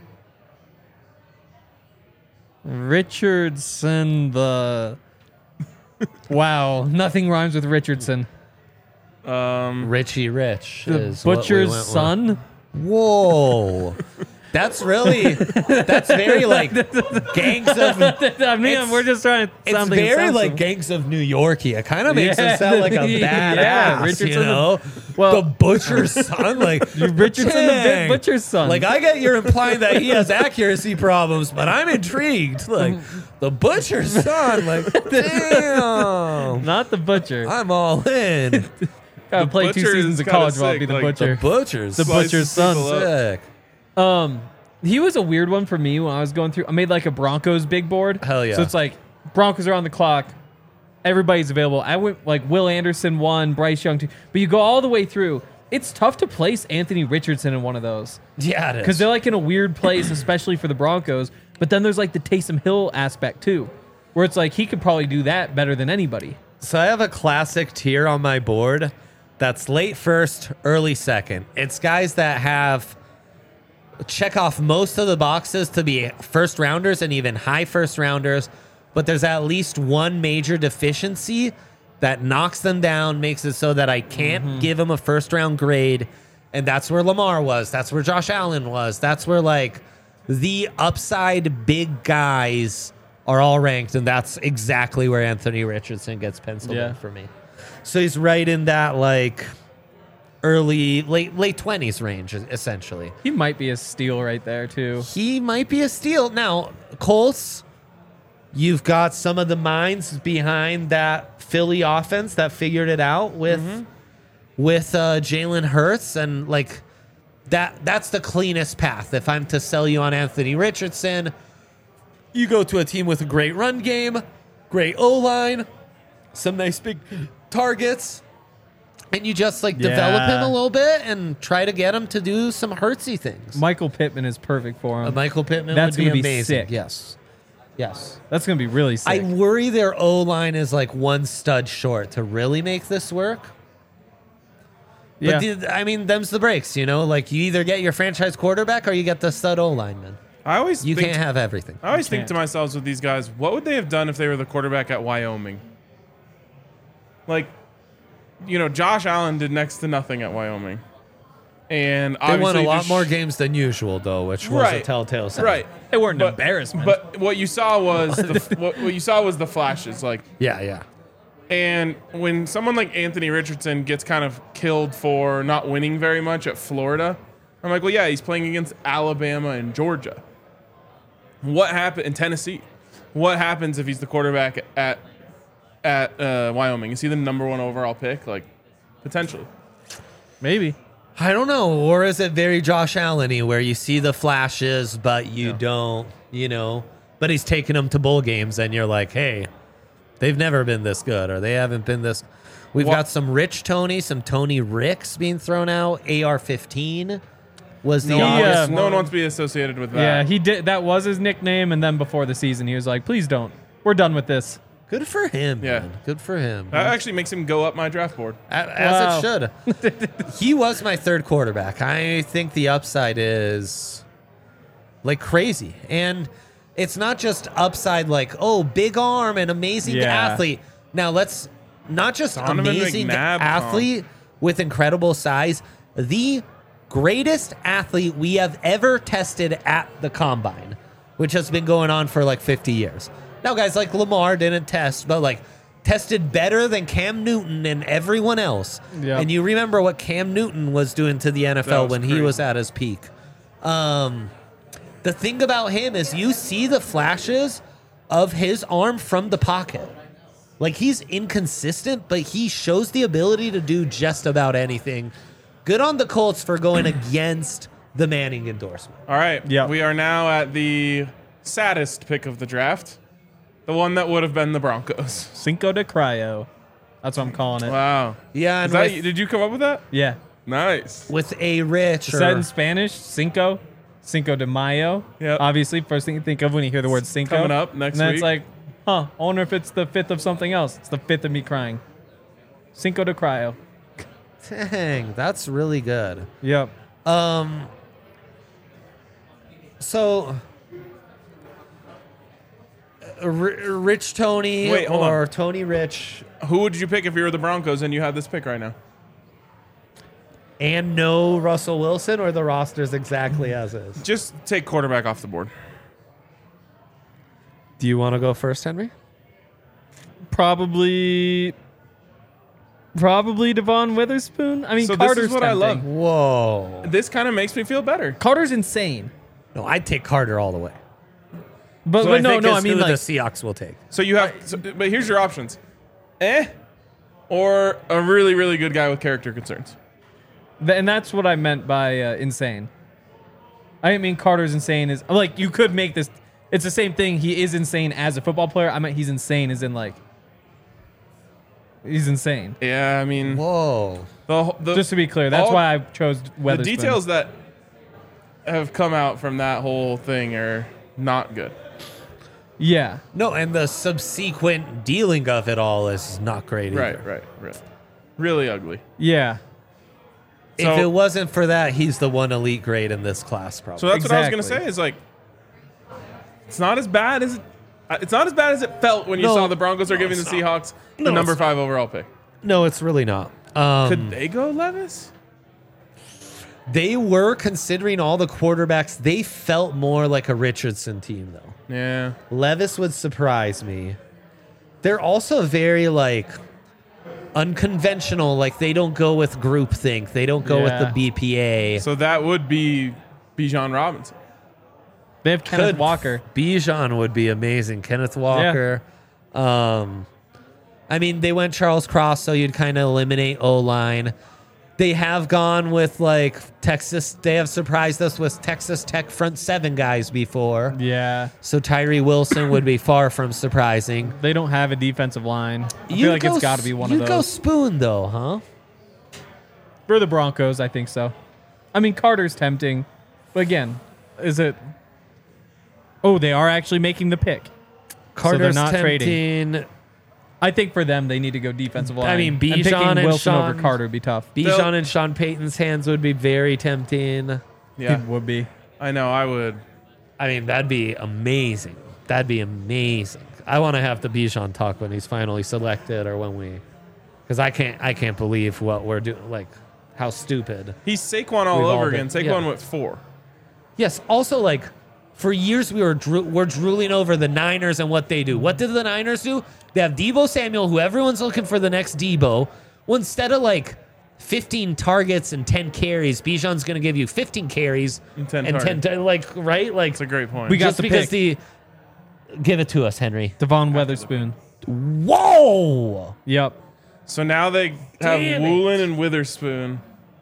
Richardson the. Wow. Nothing rhymes with Richardson. Richie Rich The is what we butcher's went with. son. Whoa. That's very like gangs of. I mean, we're just trying to It's sound like it very sounds like some- gangs of New Yorkie. It kind of makes Yeah. him sound like a Yeah, badass, Richardson you the- know? well- the butcher's son, like Richardson the dang. butcher's son. Like I get you're implying that he has accuracy problems, but I'm intrigued. Like the butcher's son, like damn, Not the butcher. I'm all in. Gotta play 2 butcher seasons is of kinda college while I'll be sick, the like, butcher. Butcher's The butcher's son. people up. sick. He was a weird one for me when I was going through. I made like a Broncos big board. Hell yeah. So it's like Broncos are on the clock. Everybody's available. I went like Will Anderson 1, Bryce Young 2. But you go all the way through, it's tough to place Anthony Richardson in one of those. Yeah, it is. Because they're like in a weird place, especially for the Broncos. But then there's like the Taysom Hill aspect too, where it's like he could probably do that better than anybody. So I have a classic tier on my board that's late first, early second. It's guys that have check off most of the boxes to be first rounders and even high first rounders, but there's at least one major deficiency that knocks them down, makes it so that I can't give them a first round grade. And that's where Lamar was. That's where Josh Allen was. That's where like the upside big guys are all ranked. And that's exactly where Anthony Richardson gets penciled in for me. So he's right in that like late 20s range, essentially. He might be a steal right there too. He might be a steal. Now, Colts, you've got some of the minds behind that Philly offense that figured it out with Jalen Hurts, and like that's the cleanest path. If I'm to sell you on Anthony Richardson, you go to a team with a great run game, great O-line, some nice big targets, and you just like develop him a little bit and try to get him to do some Hurtsy things. Michael Pittman is perfect for him. Michael Pittman That's would be gonna be amazing. sick. Yes. That's going to be really sick. I worry their O-line is like one stud short to really make this work. But I mean, them's the breaks, you know? Like, you either get your franchise quarterback or you get the stud O-lineman. You can't have everything. I always think to myself with these guys, what would they have done if they were the quarterback at Wyoming? Like, you know, Josh Allen did next to nothing at Wyoming. And they won a lot more games than usual, though, which was a telltale sign. Right. They weren't an embarrassment. But what you saw was what you saw was the flashes. Like, yeah. And when someone like Anthony Richardson gets kind of killed for not winning very much at Florida, I'm like, well, yeah, he's playing against Alabama and Georgia. What happened in Tennessee? What happens if he's the quarterback at Wyoming? Is he the number 1 overall pick? Like, potentially. Maybe. I don't know. Or is it very Josh Allen-y where you see the flashes, but you don't, you know, but he's taking them to bowl games and you're like, hey, they've never been this good or they haven't been this. We've got some Rich Tony, some Tony Ricks being thrown out. AR-15 was the obvious one. No one wants to be associated with that. Yeah, he did. That was his nickname. And then before the season, he was like, please don't. We're done with this. Good for him, man. Good for him. That actually makes him go up my draft board. As it should. He was my third quarterback. I think the upside is like crazy. And it's not just upside like, oh, big arm and amazing athlete. Now, let's not just amazing athlete with incredible size. The greatest athlete we have ever tested at the combine, which has been going on for like 50 years. Now, guys like Lamar didn't test, but like tested better than Cam Newton and everyone else. Yep. And you remember what Cam Newton was doing to the NFL when he was at his peak. The thing about him is you see the flashes of his arm from the pocket. Like, he's inconsistent, but he shows the ability to do just about anything. Good on the Colts for going against the Manning endorsement. All right. Yep. We are now at the saddest pick of the draft. The one that would have been the Broncos. Cinco de Cryo. That's what I'm calling it. Wow. Yeah. And did you come up with that? Yeah. Nice. With a rich. Is that in Spanish? Cinco de Mayo. Yeah. Obviously, first thing you think of when you hear the word Cinco. Coming up next week. And then it's like, I wonder if it's the 5th of something else. It's the 5th of me crying. Cinco de Cryo. Dang, that's really good. Yep. So, Rich Tony or Tony Rich. Who would you pick if you were the Broncos and you had this pick right now? And no Russell Wilson, or the roster's exactly as is? Just take quarterback off the board. Do you want to go first, Henry? Probably Devon Witherspoon. I mean, so Carter's this is what tempting. I love. Whoa. This kind of makes me feel better. Carter's insane. No, I'd take Carter all the way. But, So but I I mean, the like, Seahawks will take. So you have, but here's your options: or a really, really good guy with character concerns. and that's what I meant by insane. I didn't mean Carter's insane. Is like you could make this. It's the same thing. He is insane as a football player. I meant he's insane as in like He's insane. Yeah, I mean, Whoa. Just to be clear, that's why I chose Weatherspoon. The details that have come out from that whole thing are not good. Yeah. No, and the subsequent dealing of it all is not great either. Right. Really ugly. Yeah. If So- it wasn't for that, he's the one elite grade in this class, probably. So that's what I was gonna Exactly. say. Is like, it's not as bad as it felt when you No. saw the Broncos are giving the it's not. Seahawks No, the number it's 5 overall pick. No, it's really not. Could they go Levis? They were considering all the quarterbacks. They felt more like a Richardson team, though. Yeah. Levis would surprise me. They're also very, like, unconventional. Like, they don't go with groupthink. They don't go with the BPA. So that would be Bijan Robinson. They have Kenneth Walker. Bijan would be amazing. Kenneth Walker. I mean, they went Charles Cross, so you'd kind of eliminate O-line. They have gone with, like, Texas. They have surprised us with Texas Tech front seven guys before. Yeah. So Tyree Wilson would be far from surprising. They don't have a defensive line. I feel like it's got to be one of those. You'd go Spoon, though, huh? For the Broncos, I think so. I mean, Carter's tempting. But again, is it... Oh, they are actually making the pick. Carter's not tempting. trading. I think for them, they need to go defensive line. I mean, And Bijan picking and Wilson Sean- over Carter would be tough. Bijan and Sean Payton's hands would be very tempting. Yeah, It would be. I know. I would. I mean, that'd be amazing. That'd be amazing. I want to have the Bijan talk when he's finally selected, or when we, because I can't believe what we're doing. Like, how stupid. He's Saquon all We've all over been- again. Saquon yeah. went 4. Yes. Also, like, for years we're drooling over the Niners and what they do. What did the Niners do? They have Deebo Samuel, who everyone's looking for the next Deebo. Well, instead of like 15 targets and 10 carries, Bijan's going to give you 15 carries And 10 like, right? Like, That's a great point. We got just the because pick. give it to us, Henry. Devon Weatherspoon. Whoa! Yep. So now they have Damn it. Woolen and Witherspoon.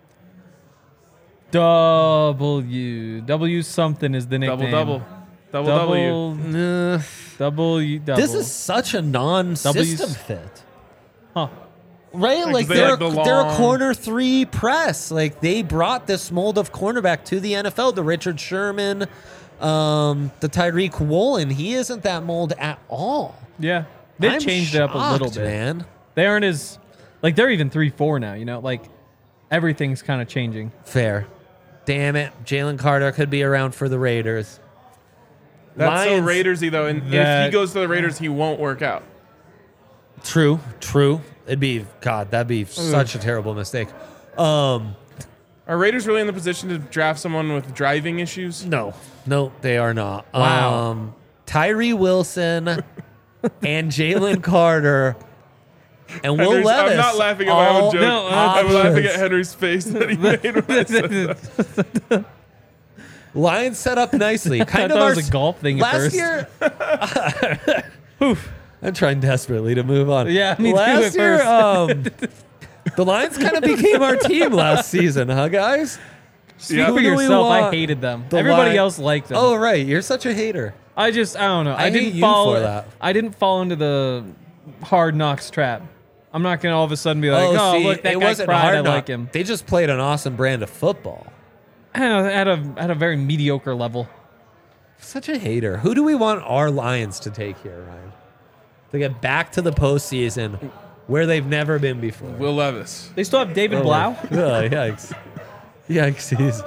W something is the nickname. Double W. W. This is such a non-system W's. fit. Huh. Right? Like, they they're, like the they're a long- corner 3 press. Like, they brought this mold of cornerback to the NFL. The Richard Sherman, the Tyreek Woolen. He isn't that mold at all. Yeah. They've I'm changed it up a little shocked, bit. man. They aren't as... Like, they're even 3-4 now, you know? Like, everything's kind of changing. Fair. Damn it. Jalen Carter could be around for the Raiders. That's so Lions- Raidersy though, and if That- he goes to the Raiders, he won't work out. True. It'd be, God, that'd be such a terrible mistake. Are Raiders really in the position to draft someone with driving issues? No, they are not. Wow. Tyree Wilson and Jalen Carter and Will Henry's- Levis. I'm not laughing at my own all joke. No, I'm laughing at options. Henry's face that he made when I said that. Lions set up nicely. Kind I of thought our it was a golf thing at last first. year. I'm trying desperately to move on. Yeah, me too last at year, first. the Lions kind of became our team last season, huh, guys? Speak Yeah. for Who do we yourself. I want? hated them. The Everybody Lion- else liked them. Oh, right. You're such a hater. I don't know. I hate didn't you fall for that. I didn't fall into the Hard Knocks trap. I'm not gonna all of a sudden be like, oh, see, look, that it guy wasn't cried. hard. I knock. like him. They just played an awesome brand of football. At a very mediocre level. Such a hater. Who do we want our Lions to take here, Ryan? To get back to the postseason where they've never been before. Will Levis. They still have David Blau. Oh, yikes. Yikes.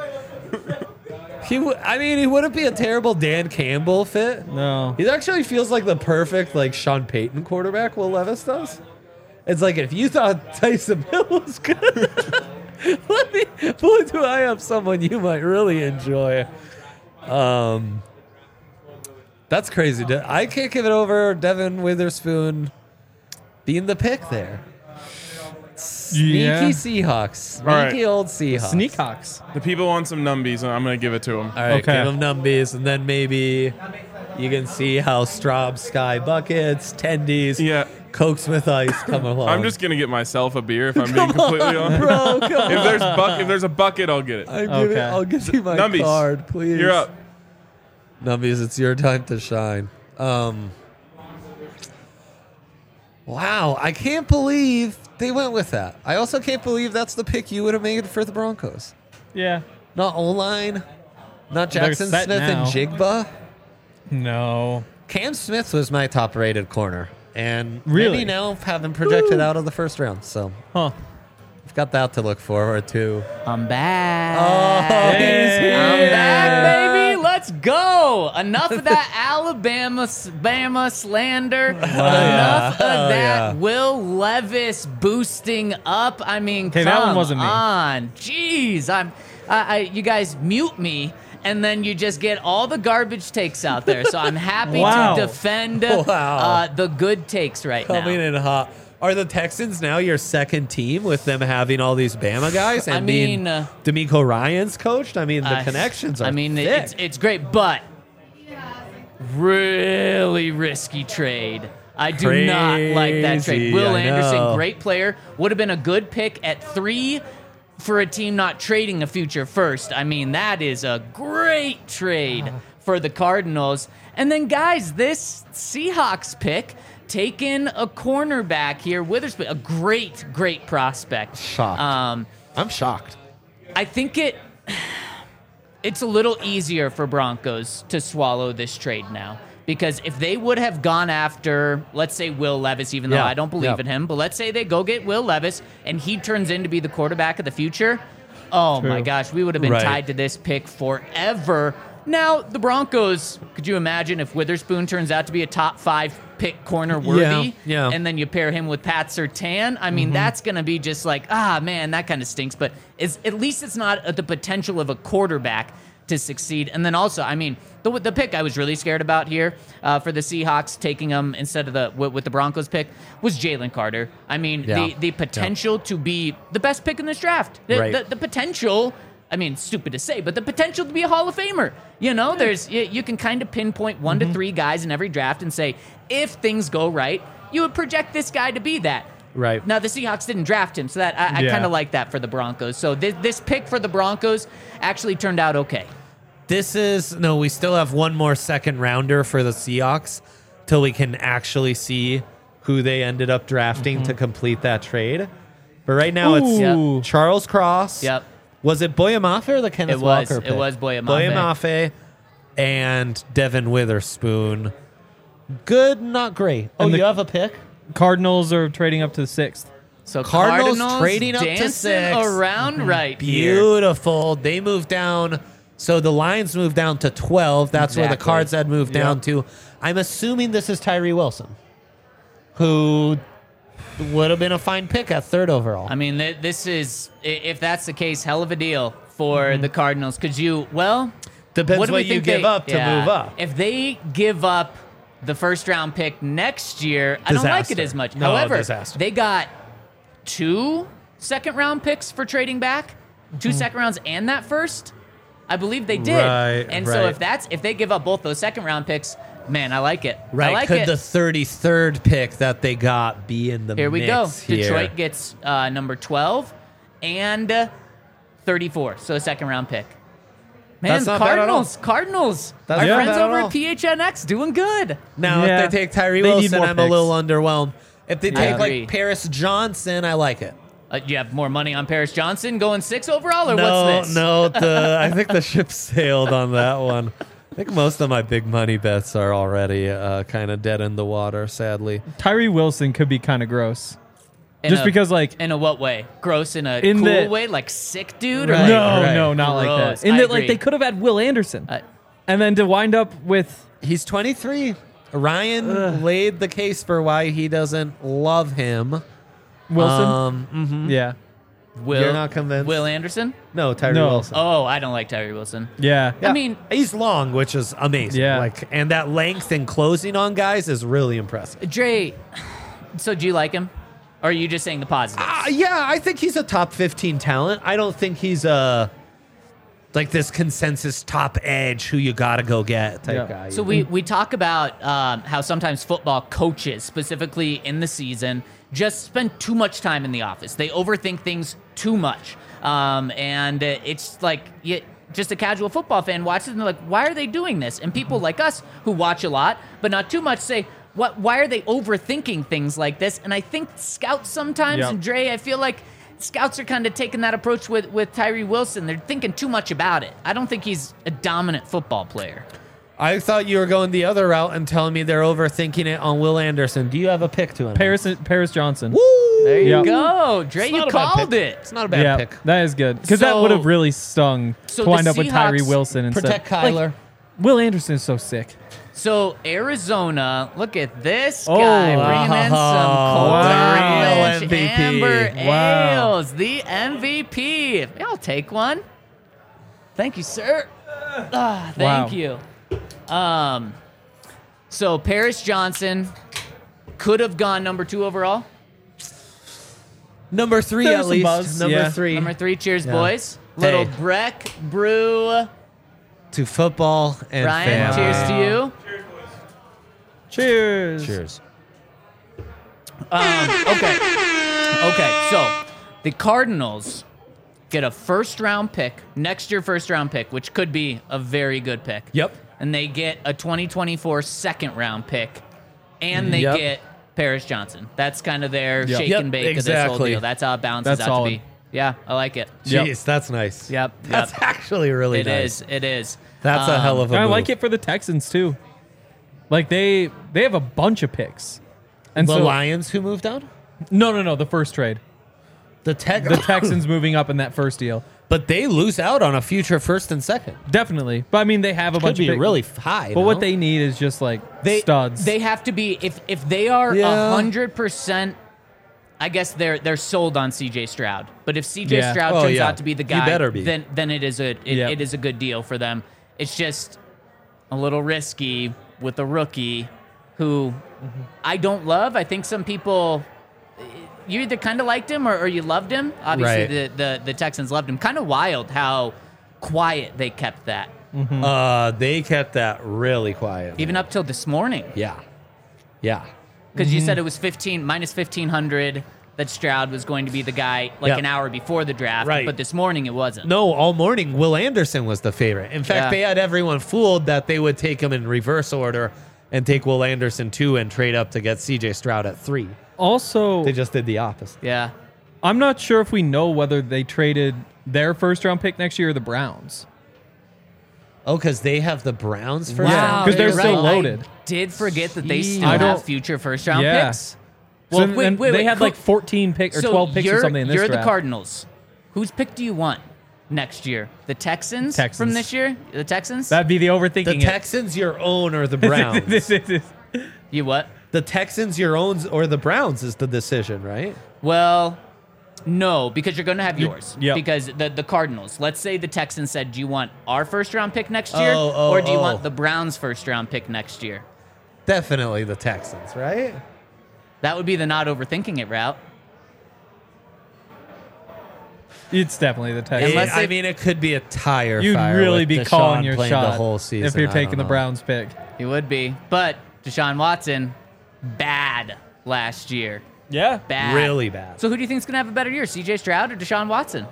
He wouldn't be a terrible Dan Campbell fit. No. He actually feels like the perfect, like, Sean Payton quarterback, Will Levis does. It's like, if you thought Tyson Hill was good, boy, do I have someone you might really enjoy. That's crazy. I can't give it over Devin Witherspoon being the pick there. Sneaky Yeah. Seahawks. Sneaky right. old Seahawks. Sneakhawks. The people want some numbies, and I'm going to give it to them. All right, Okay. give them numbies, and then maybe you can see how Straub Sky buckets, tendies, Yeah. Cokes with ice come along. I'm just going to get myself a beer if I'm being completely honest. bro. Come If there's a bucket, I'll get it. Okay. I'll give you my Numbies. card, please. You're up. Numbies, it's your time to shine. Wow, I can't believe they went with that. I also can't believe that's the pick you would have made for the Broncos. Yeah. Not O-line, not They're Jackson set Smith now. and Jigba. No. Cam Smith was my top-rated corner, and Really? many now have him projected out of the first round. So Huh. I've got that to look forward to. I'm back. Oh, he's here. I'm back, baby. Let's go. Enough of that Bama slander. Enough of that Will Levis boosting up. I mean, Okay, come that one wasn't me. on. Jeez, you guys mute me, and then you just get all the garbage takes out there. So I'm happy Wow. to defend Wow. the good takes right Coming now. in hot. Are the Texans now your second team with them having all these Bama guys and being D'Amico Ryans coached? I mean, the connections are thick. it's great, but really risky trade. I do not like that trade. Crazy, Will I Anderson, know. great player, would have been a good pick at 3 for a team not trading a future first. I mean, that is a great trade for the Cardinals. And then, guys, this Seahawks pick, taking a cornerback here, Witherspoon, a great prospect. Shocked. I'm shocked. I think it's a little easier for Broncos to swallow this trade now. Because if they would have gone after, let's say, Will Levis, even though Yeah, I don't believe yeah. in him, but let's say they go get Will Levis and he turns in to be the quarterback of the future, oh True. my gosh, we would have been Right. tied to this pick forever. Now, the Broncos, could you imagine if Witherspoon turns out to be a top 5 pick corner worthy? Yeah. And then you pair him with Pat Surtain? I mean, that's going to be just like, man, that kind of stinks. But at least it's not the potential of a quarterback to succeed. And then also, I mean, the pick I was really scared about here for the Seahawks taking him instead of with the Broncos pick was Jalen Carter. I mean, Yeah. the potential to be the best pick in this draft. Right. The potential, I mean, stupid to say, but the potential to be a Hall of Famer. You know, you can kind of pinpoint 1 to 3 guys in every draft and say, if things go right, you would project this guy to be that. Right. Now, the Seahawks didn't draft him, so that I kind of like that for the Broncos. So this pick for the Broncos actually turned out okay. We still have one more second rounder for the Seahawks till we can actually see who they ended up drafting to complete that trade. But right now Ooh. it's Charles Cross. Yep. Was it Boyamafe or the Kenneth Walker pick? It was Boyamafe. Boyamafe and Devin Witherspoon. Good, not great. Oh, And you have a pick? Cardinals are trading up to the 6th. So Cardinals Cardinals trading up to dancing 6. around right here. Beautiful. They moved down. So the Lions moved down to 12. That's where the Exactly. Cards had moved down to. I'm assuming this is Tyree Wilson, who would have been a fine pick at 3rd overall. I mean, this is, if that's the case, hell of a deal for the Cardinals. Because Depends do what we you think give up to move up. If they give up the first-round pick next year, I don't like it Disaster. as much. No, However, disaster. they got 2 second-round picks for trading back, 2 second rounds and that first. I believe they did. Right, and so right. if they give up both those second-round picks, man, I like it. Right. I like Could it. the 33rd pick that they got be in the Here we go. mix here? Detroit gets number 12 and 34, so a second-round pick. Man, That's not bad at all. Cardinals. That's Our not friends bad at over all. at PHNX doing good. Now, Yeah. if they take Tyree They need Wilson, more I'm a little picks. underwhelmed. If they take agree. like Paris Johnson, I like it. You have more money on Paris Johnson going 6 overall, or No, what's this? no, I think the ship sailed on that one. I think most of my big money bets are already kind of dead in the water, sadly. Tyree Wilson could be kind of gross. In Just a- because, like, In a what way? Gross in a In cool the- way? Like sick dude? Or Right. like, no, not like Gross. that. In I that, like, agree. they could have had Will Anderson. Uh, And then to wind up with He's 23. Ryan laid the case for why he doesn't love him. Wilson. Yeah. You're not convinced? Will Anderson? No, Tyree No. Wilson. Oh, I don't like Tyree Wilson. Yeah. Yeah. I mean, he's long, which is amazing. Yeah. And that length and closing on guys is really impressive. Dre, so do you like him? Or are you just saying the positives? Yeah, I think he's a top 15 talent. I don't think he's like this consensus top edge who you got to go get type Yeah. guy. So we talk about how sometimes football coaches, specifically in the season, just spend too much time in the office. They overthink things too much. And it's like just a casual football fan watches it and they're like, why are they doing this? And people like us who watch a lot, but not too much, say, why are they overthinking things like this? And I think scouts sometimes, and Dre, I feel like scouts are kind of taking that approach with Tyree Wilson. They're thinking too much about it. I don't think he's a dominant football player. I thought you were going the other route and telling me they're overthinking it on Will Anderson. Do you have a pick to him? Paris Johnson. Woo! There you go. Dre, you called it. It's not a bad pick. That is good. Because that would have really stung to wind up with Tyree Wilson instead. Protect Kyler. Will Anderson is so sick. So Arizona, look at this guy bringing in some Colton Lynch, Amber Ales, the MVP. I'll take one. Thank you, sir. Thank you. So Paris Johnson could have gone number 2 overall. Number 3 There's at some least. buzz. Number 3. Number 3. Cheers, boys. Little Breck Brew. To football and Ryan, family. cheers to you. Cheers. Cheers. Okay. So the Cardinals get a first-round pick, next year first-round pick, which could be a very good pick. Yep. And they get a 2024 second-round pick, and they get Paris Johnson. That's kind of their shake and bake of this whole deal. That's how it balances out to be. Yeah, I like it. Jeez, that's nice. Yep. That's actually really nice. It is. That's a hell of a move. I like it for the Texans, too. Like, they have a bunch of picks. And the Lions who moved out? No, the first trade. The Texans moving up in that first deal. But they lose out on a future first and second. Definitely. But, I mean, they have a bunch of picks. Really high. But what they need is just, like, studs. They have to be, if they are 100%, I guess they're sold on C.J. Stroud. But if C.J. Stroud turns out to be the guy, then it is a good deal for them. It's just a little risky with a rookie who I don't love. I think some people, you either kind of liked him or you loved him. Obviously, the Texans loved him. Kind of wild how quiet they kept that. They kept that really quiet. Even up till this morning. Yeah. Because you said it was minus 1,500 that Stroud was going to be the guy an hour before the draft. Right. But this morning it wasn't. No, all morning, Will Anderson was the favorite. In fact, they had everyone fooled that they would take him in reverse order and take Will Anderson 2 and trade up to get C.J. Stroud at 3. Also, they just did the opposite. Yeah. I'm not sure if we know whether they traded their first-round pick next year or the Browns. Oh, because they have the Browns first? Wow, because they're still loaded. I did forget that they still have future first-round picks. Well, so wait, they had like 14 picks or 12 picks or something in this draft. You're the Cardinals. Whose pick do you want next year? The Texans from this year? The Texans? That'd be the overthinking. The Texans your own or the Browns? You what? The Texans your own or the Browns is the decision, right? Well, no, because you're going to have yours. Yep. Because the Cardinals, let's say the Texans said, do you want our first-round pick next year or do you want the Browns' first-round pick next year? Definitely the Texans, right? That would be the not overthinking it route. It's definitely the Texans. I mean, it could be a tire You'd fire. really be Deshaun calling your shot the whole season, if you're taking the Browns pick. You would be. But Deshaun Watson, bad last year. Yeah. Bad. Really bad. So who do you think is going to have a better year, C.J. Stroud or Deshaun Watson?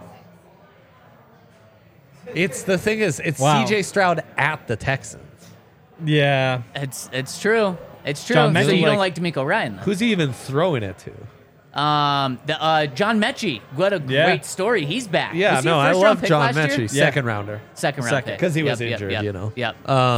It's the thing is, it's Wow. C.J. Stroud at the Texans. Yeah. It's true. It's true. John So Mechie, you don't like DeMeco Ryan, though. Who's he even throwing it to? John Mechie. What a great story. He's back. Yeah, Was he a no, I first-round love pick John last year? Mechie. Second rounder. Second round pick. Because he was injured, you know. Yep.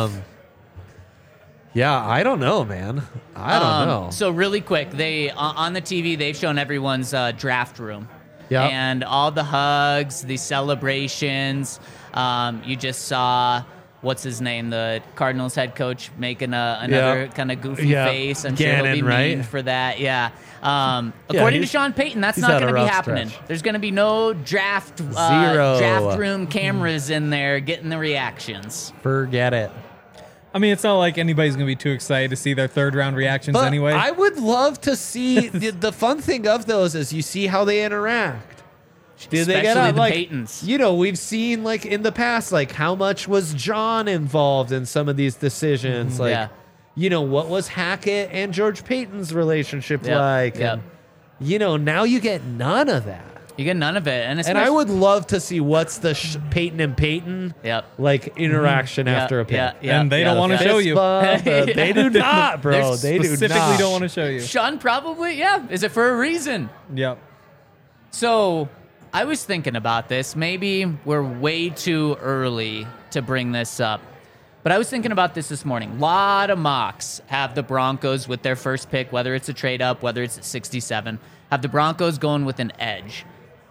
Yeah, I don't know, man. I don't know. So really quick, they on the TV, they've shown everyone's draft room. Yep. And all the hugs, the celebrations. You just saw, what's his name, the Cardinals head coach making another kind of goofy face. I'm sure he'll be memed for that. Yeah. According to Sean Payton, that's not going to be happening. There's going to be no draft room cameras in there getting the reactions. Forget it. I mean, it's not like anybody's going to be too excited to see their third-round reactions But anyway. I would love to see the fun thing of those is you see how they interact. Did they get Especially out, like, Paytons. you know, we've seen like in the past, like how much was John involved in some of these decisions? Like, you know, what was Hackett and George Payton's relationship like? Yep. And, you know, now you get none of that. You get none of it, and I would love to see what's the Peyton and Peyton interaction after a pick. And they don't want to show you. They do not, bro. They do specifically not. don't want to show you. Sean probably, is it for a reason? Yep. So I was thinking about this. Maybe we're way too early to bring this up. But I was thinking about this morning. A lot of mocks have the Broncos with their first pick, whether it's a trade up, whether it's at 67, have the Broncos going with an edge.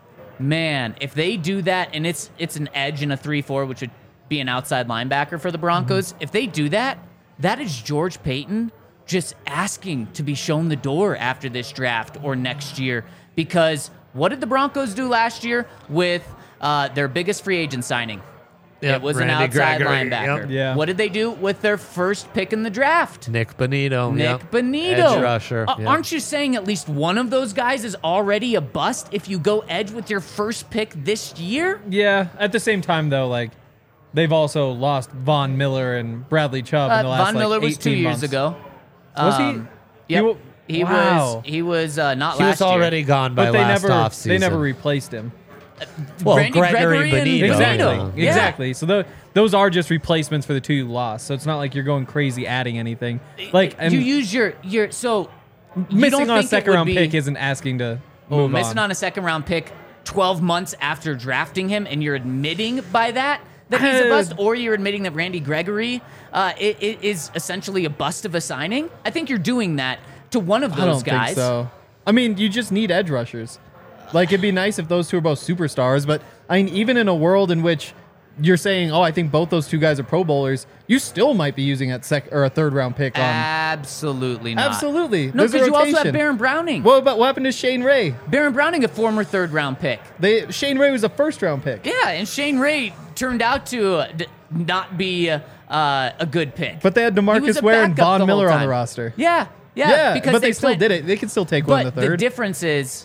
Man, if they do that, and it's an edge in a 3-4, which would be an outside linebacker for the Broncos, if they do that, that is George Payton just asking to be shown the door after this draft or next year. Because what did the Broncos do last year with their biggest free agent signing? Yep, it was Randy an outside Gregory, linebacker. yep. Yeah. What did they do with their first pick in the draft? Nick Bonito. Nick Bonito. Edge rusher. Yep. Aren't you saying at least one of those guys is already a bust if you go edge with your first pick this year? Yeah. At the same time, though, like, they've also lost Von Miller and Bradley Chubb in the last, Von Miller was 18 2 years months. ago. Was he? Yep. He Wow. was not last He was already year. gone by But they last never, offseason. they never replaced him. Well, Randy Gregory and Bonito. Exactly. Bonito. Yeah. Exactly. So those are just replacements for the two you lost. So it's not like you're going crazy adding anything. Like, and you use your so you don't missing on a think it second would round be- pick isn't asking to move missing on. on a second round pick 12 months after drafting him, and you're admitting by that he's a bust, or you're admitting that Randy Gregory it is essentially a bust of a signing. I think you're doing that to one of those I don't guys. think so. I mean, you just need edge rushers. Like, it'd be nice if those two are both superstars, but I mean, even in a world in which you're saying, oh, I think both those two guys are Pro Bowlers, you still might be using a third round pick on. Absolutely not. Absolutely. No, There's a because you also have rotation. Baron Browning. What happened to Shane Ray? Baron Browning, a former third round pick. Shane Ray was a first round pick. Yeah, and Shane Ray turned out to not be a good pick. But they had He was DeMarcus a Ware and backup Von the whole Miller on the time. roster. Yeah, because but they still did it. They could still take one in the But third. the difference is,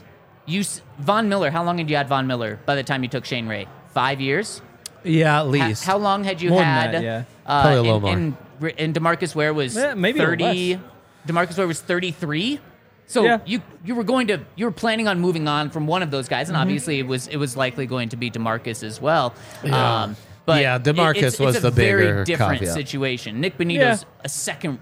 Von Miller. How long had you had Von Miller by the time you took Shane Ray? 5 years. Yeah, at least. How long had you More than had? that, yeah. Probably a little more. And DeMarcus Ware was maybe 30. DeMarcus Ware was 33. So Yeah. you were planning on moving on from one of those guys, Mm-hmm. and obviously it was likely going to be DeMarcus as well. Yeah. But Yeah, DeMarcus it's was a the very bigger different caveat. situation. Nick Bonito's a second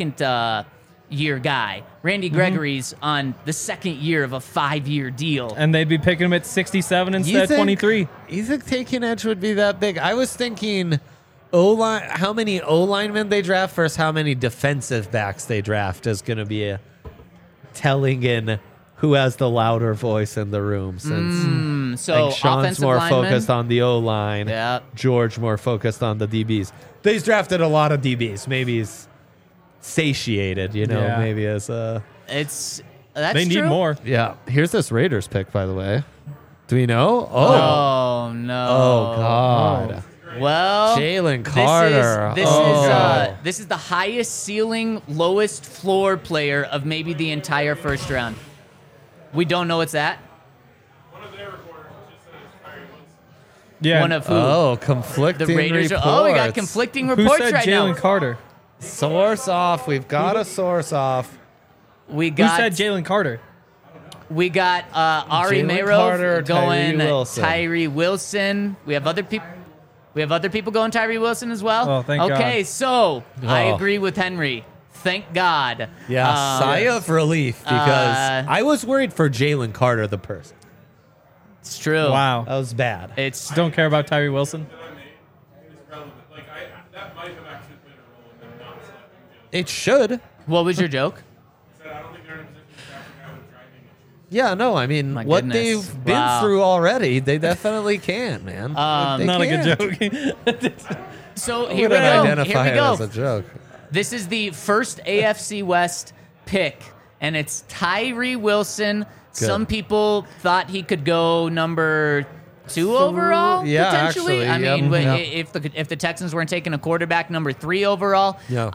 year guy. Randy Gregory's on the second year of a 5-year deal. and they'd be picking him at 67 instead of 23. You think taking edge would be that big? I was thinking O-line, how many O-linemen they draft versus how many defensive backs they draft is going to be a telling in who has the louder voice in the room. Since So like Sean's offensive more linemen, focused on the O-line, Yeah. George more focused on the DBs. They've drafted a lot of DBs. Maybe he's satiated, Yeah. maybe as a... that's They need true. more. Yeah, here's this Raiders pick, by the way. Do we know? Oh no! Oh, God. Well, Jalen Carter. This is the highest ceiling, lowest floor player of maybe the entire first round. We don't know what's that. One of their reporters just said it's Kyrie Wilson. Yeah. One of who? Oh, conflicting The Raiders. reports. Oh, we got conflicting Who reports said right Jalen now. Carter? Source off. We've got a source off. We Who got said Jalen Carter? We got Ari Jalen Mayro Carter, going Tyree Wilson. Tyree Wilson. We have other people. We have other people going Tyree Wilson as well. Oh, thank okay, God. so I Oh. agree with Henry. Thank God. Yeah, sigh of relief because I was worried for Jalen Carter, the person. It's true. Wow. That was bad. It's Don't care about Tyree Wilson. It's relevant. Like, that might have actually played a role in them not selecting Jalen. It should. what was your joke? I said I don't think they're in a position to draft a guy with driving issues. Yeah, no, I mean, My what goodness. they've been Wow. through already, they definitely can, man. They Not a can't. good joke. So I here we wouldn't go. identify Here we it go. as a joke. This is the first AFC West pick, and it's Tyree Wilson. Some people thought he could go number 2 overall, yeah, potentially. actually, I mean, yep. if the Texans weren't taking a quarterback number 3 overall, Yeah.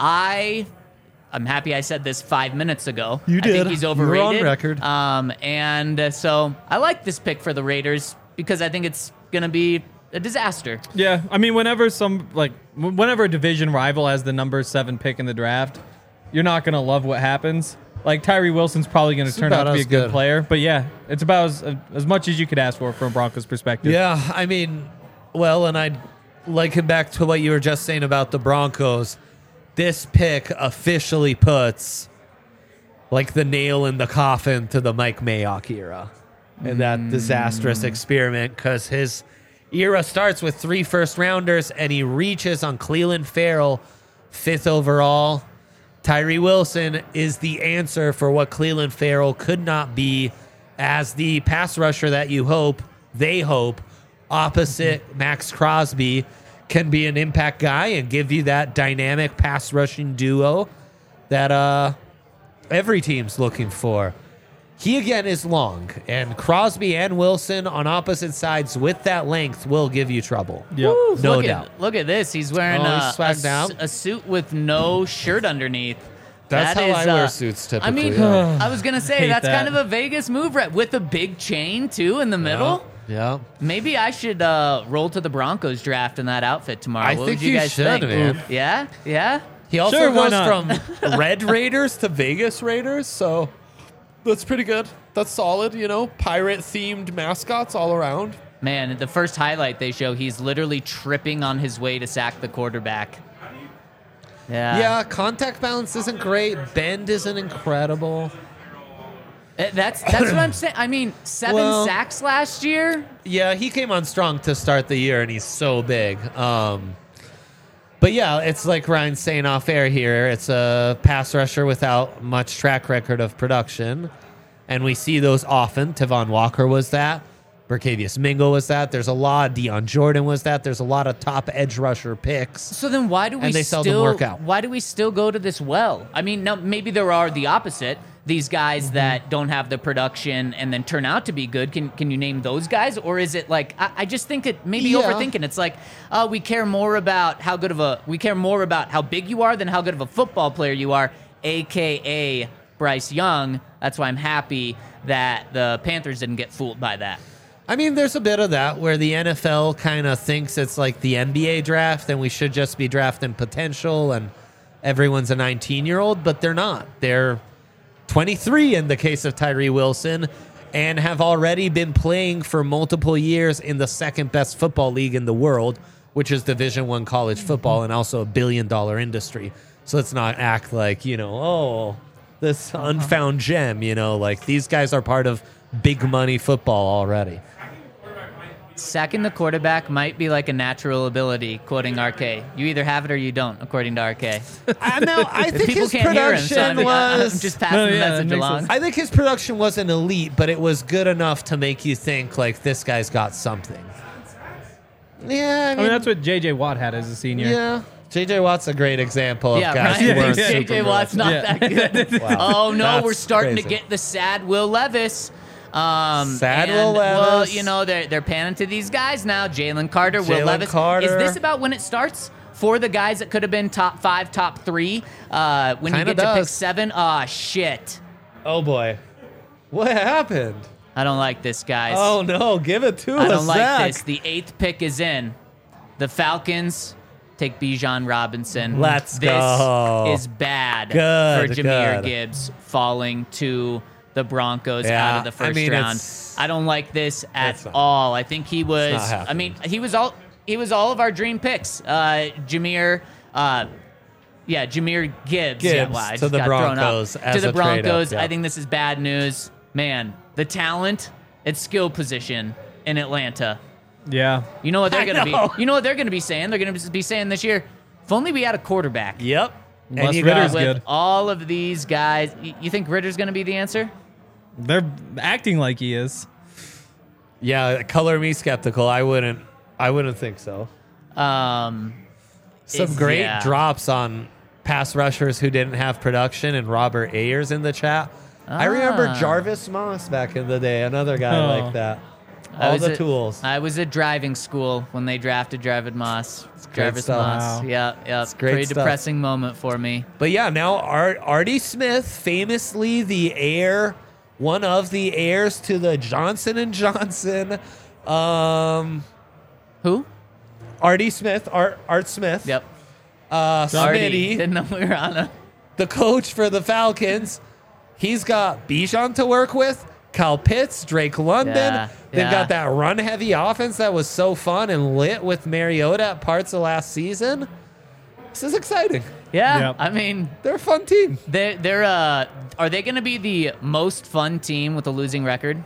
I'm happy I said this 5 minutes ago. You I think did. he's You were overrated. on record. So I like this pick for the Raiders because I think it's going to be a disaster. Yeah, I mean, whenever a division rival has the number 7 pick in the draft, you're not gonna love what happens. Like Tyree Wilson's probably going to turn out to be a good good. player, but yeah, it's about as much as you could ask for from a Broncos perspective. Yeah, I mean, well, and I'd liken back to what you were just saying about the Broncos. This pick officially puts like the nail in the coffin to the Mike Mayock era and that disastrous experiment, because his era starts with 3 first-rounders and he reaches on Clelin Ferrell, 5th overall. Tyree Wilson is the answer for what Clelin Ferrell could not be as the pass rusher that you they hope, opposite Max Crosby, can be an impact guy and give you that dynamic pass rushing duo that every team's looking for. He, again, is long, and Crosby and Wilson on opposite sides with that length will give you trouble. Yep. Woo, No look doubt. Look at this. He's wearing he's swagged out. a suit with no shirt underneath. That's That how is, I wear suits typically. I mean, yeah. I was going to say, Hate that's that. kind of a Vegas move, right? With a big chain, too, in the middle. Yeah. Maybe I should roll to the Broncos draft in that outfit tomorrow. I What think would you you guys should, think? man. Yeah? Yeah? He also Sure, why goes not? from Red Raiders to Vegas Raiders, so that's pretty good. That's solid, pirate-themed mascots all around. Man, the first highlight they show, he's literally tripping on his way to sack the quarterback. Yeah, contact balance isn't great. Bend isn't incredible. That's what I'm saying. I mean, 7 sacks last year. Yeah, he came on strong to start the year, and he's so big. But yeah, it's like Ryan's saying off air here. It's a pass rusher without much track record of production. And we see those often. Tavon Walker was that. Berkavius Mingo was that. There's a lot. Deion Jordan was that. There's a lot of top edge rusher picks. So then why do we And they seldom work out. Why do we still go to this well? I mean, now maybe there are the opposite. These guys that don't have the production and then turn out to be good. Can you name those guys? Or is it like I just think it maybe Yeah. overthinking. It's like we care more about how big you are than how good of a football player you are, aka Bryce Young. That's why I'm happy that the Panthers didn't get fooled by that. I mean, there's a bit of that where the NFL kind of thinks it's like the NBA draft and we should just be drafting potential and everyone's a 19-year-old, but they're not. They're 23 in the case of Tyree Wilson and have already been playing for multiple years in the second best football league in the world, which is Division I college football and also a billion-dollar industry. So let's not act like, this unfound gem, like these guys are part of big money football already. Sacking the quarterback might be like a natural ability, quoting RK. You either have it or you don't, according to RK. I think People his can't hear him, so production I'm was. just passing No, the yeah, that message makes along. sense. I think his production wasn't elite, but it was good enough to make you think like this guy's got something. Yeah, I mean, that's what J.J. Watt had as a senior. yeah. J.J. Watt's a great example of Yeah, guys Ryan who weren't thinks super J.J. Watt's not Yeah. that good. Wow. Oh, no, That's we're starting crazy. to get the sad Will Levis. Sad and, Will Well, Levis. they're panning to these guys now. Jalen Carter, Will Jalen Levis. Carter. Is this about when it starts? For the guys that could have been top 5, top 3, when you Kinda get to pick does. 7, ah, shit. Oh boy, what happened? I don't like this, guys. Oh no, give it to us. I don't like Zach. this. The 8th pick is in. The Falcons take Bijan Robinson. Let's this go. is bad Good, for Jahmyr good. Gibbs falling to the Broncos Yeah, out of the first I mean, round. it's- I don't like this at it's not- all. I think he was. not I happening. mean, he was all of our dream picks. Jahmyr. Jahmyr Gibbs. Yeah, Gibbs wow, I to just the got thrown up. Broncos as To the a trade-up, Broncos. yeah. I think this is bad news. Man, the talent at skill position in Atlanta. Yeah. You know what they're I going to know. be? You know what they're going to be saying? They're going to be saying this year, if only we had a quarterback. Yep. Unless And you Ritter's got, good. With all of these guys, you think Ritter's going to be the answer? They're acting like he is. yeah, color me skeptical. I wouldn't think so. Some great yeah. drops on pass rushers who didn't have production, and Robert Ayers in the chat. I remember Ah. Jarvis Moss back in the day, another guy Oh. like that. I All was the at- tools. I was at driving school when they drafted Jarvis Moss. great Jarvis stuff. Moss. Wow. Yeah. great Pretty stuff. depressing moment for me. But yeah, now Artie Smith, famously the heir, one of the heirs to the Johnson & Johnson. Who? Artie Smith, Art Smith. Yep. Artie. Smitty, Didn't know we were on a. the coach for the Falcons, He's got Bijan to work with, Kyle Pitts, Drake London. Yeah, They've yeah. got that run-heavy offense that was so fun and lit with Mariota at parts of last season. This is exciting. Yeah, Yep. I mean, They're a fun team. they're are they going to be the most fun team with a losing record?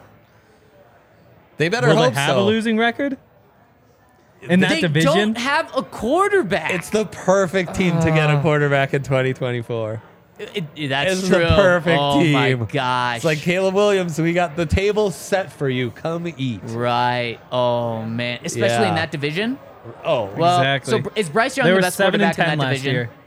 They better Will hope they have so. a losing record in that They division? don't have a quarterback. It's the perfect team to get a quarterback in 2024. That's It's true. the perfect oh team. my gosh! It's like Caleb Williams. We got the table set for you. Come eat. right. Oh man, especially in Yeah. that division. Oh, Well, Exactly. so is Bryce Young They the were best 7 and quarterback 10 in that last division? year.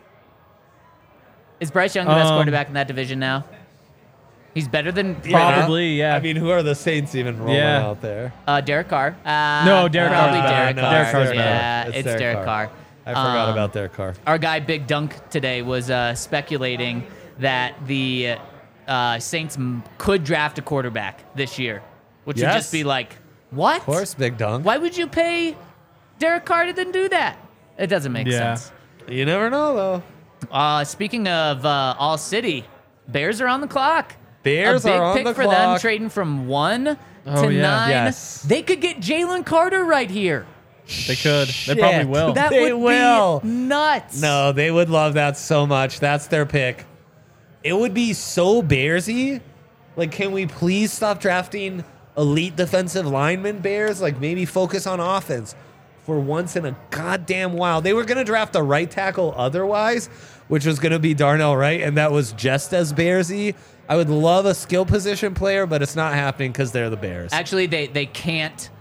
Is Bryce Young the best Um, quarterback in that division now? He's better than Probably, yeah. I mean, who are the Saints even rolling Yeah. out there? Derek Carr. No, Derek probably Carr's Derek better. Carr. Derek Carr's yeah, better. it's It's Derek Derek Carr. I forgot about their car. Our guy Big Dunk today was speculating that the Saints could draft a quarterback this year, which would Yes. just be like, what? Of course, Big Dunk. Why would you pay Derek Carr to then do that? It doesn't make Yeah. sense. You never know, though. Speaking of All City, Bears are on the clock. Bears a big are on pick the for them, clock. trading from 1 Oh, to yeah. 9. Yes. They could get Jalen Carter right here. They could. They probably Shit. will. That They would will. be nuts. No, they would love that so much. That's their pick. It would be so Bearsy. Like, can we please stop drafting elite defensive linemen, Bears? Like, maybe focus on offense for once in a goddamn while. They were going to draft a right tackle otherwise, which was going to be Darnell Wright, and that was just as Bearsy. I would love a skill position player, but it's not happening because they're the Bears. Actually, they can't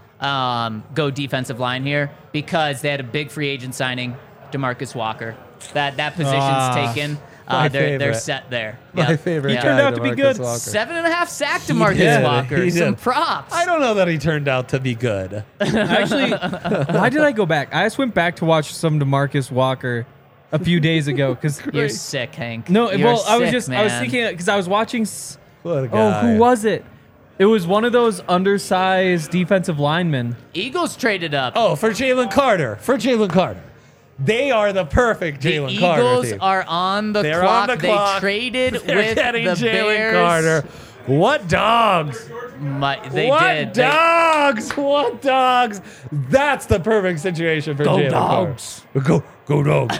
go defensive line here because they had a big free agent signing, DeMarcus Walker. That position's taken. My They're favorite. set there. My Yep. favorite Yeah. guy, Turned out to be DeMarcus good. Walker. 7.5 sack DeMarcus did. Walker. He Some did. props. I don't know that he turned out to be good. Actually, why did I go back? I just went back to watch some DeMarcus Walker a few days ago because You're sick, Hank. no, You're well, I was sick, just I was man. thinking because I was watching. What a Oh, guy. who was it? It was one of those undersized defensive linemen. Eagles traded up. Oh, for Jalen Carter. For Jalen Carter. They are the perfect the Jalen Carter Eagles team. are on the They're clock. on the They clock. traded They're with getting the Jalen Bears. Carter. What dogs? They what did. They- dogs? What dogs? That's the perfect situation for Go Jalen dogs. Carter. Go dogs.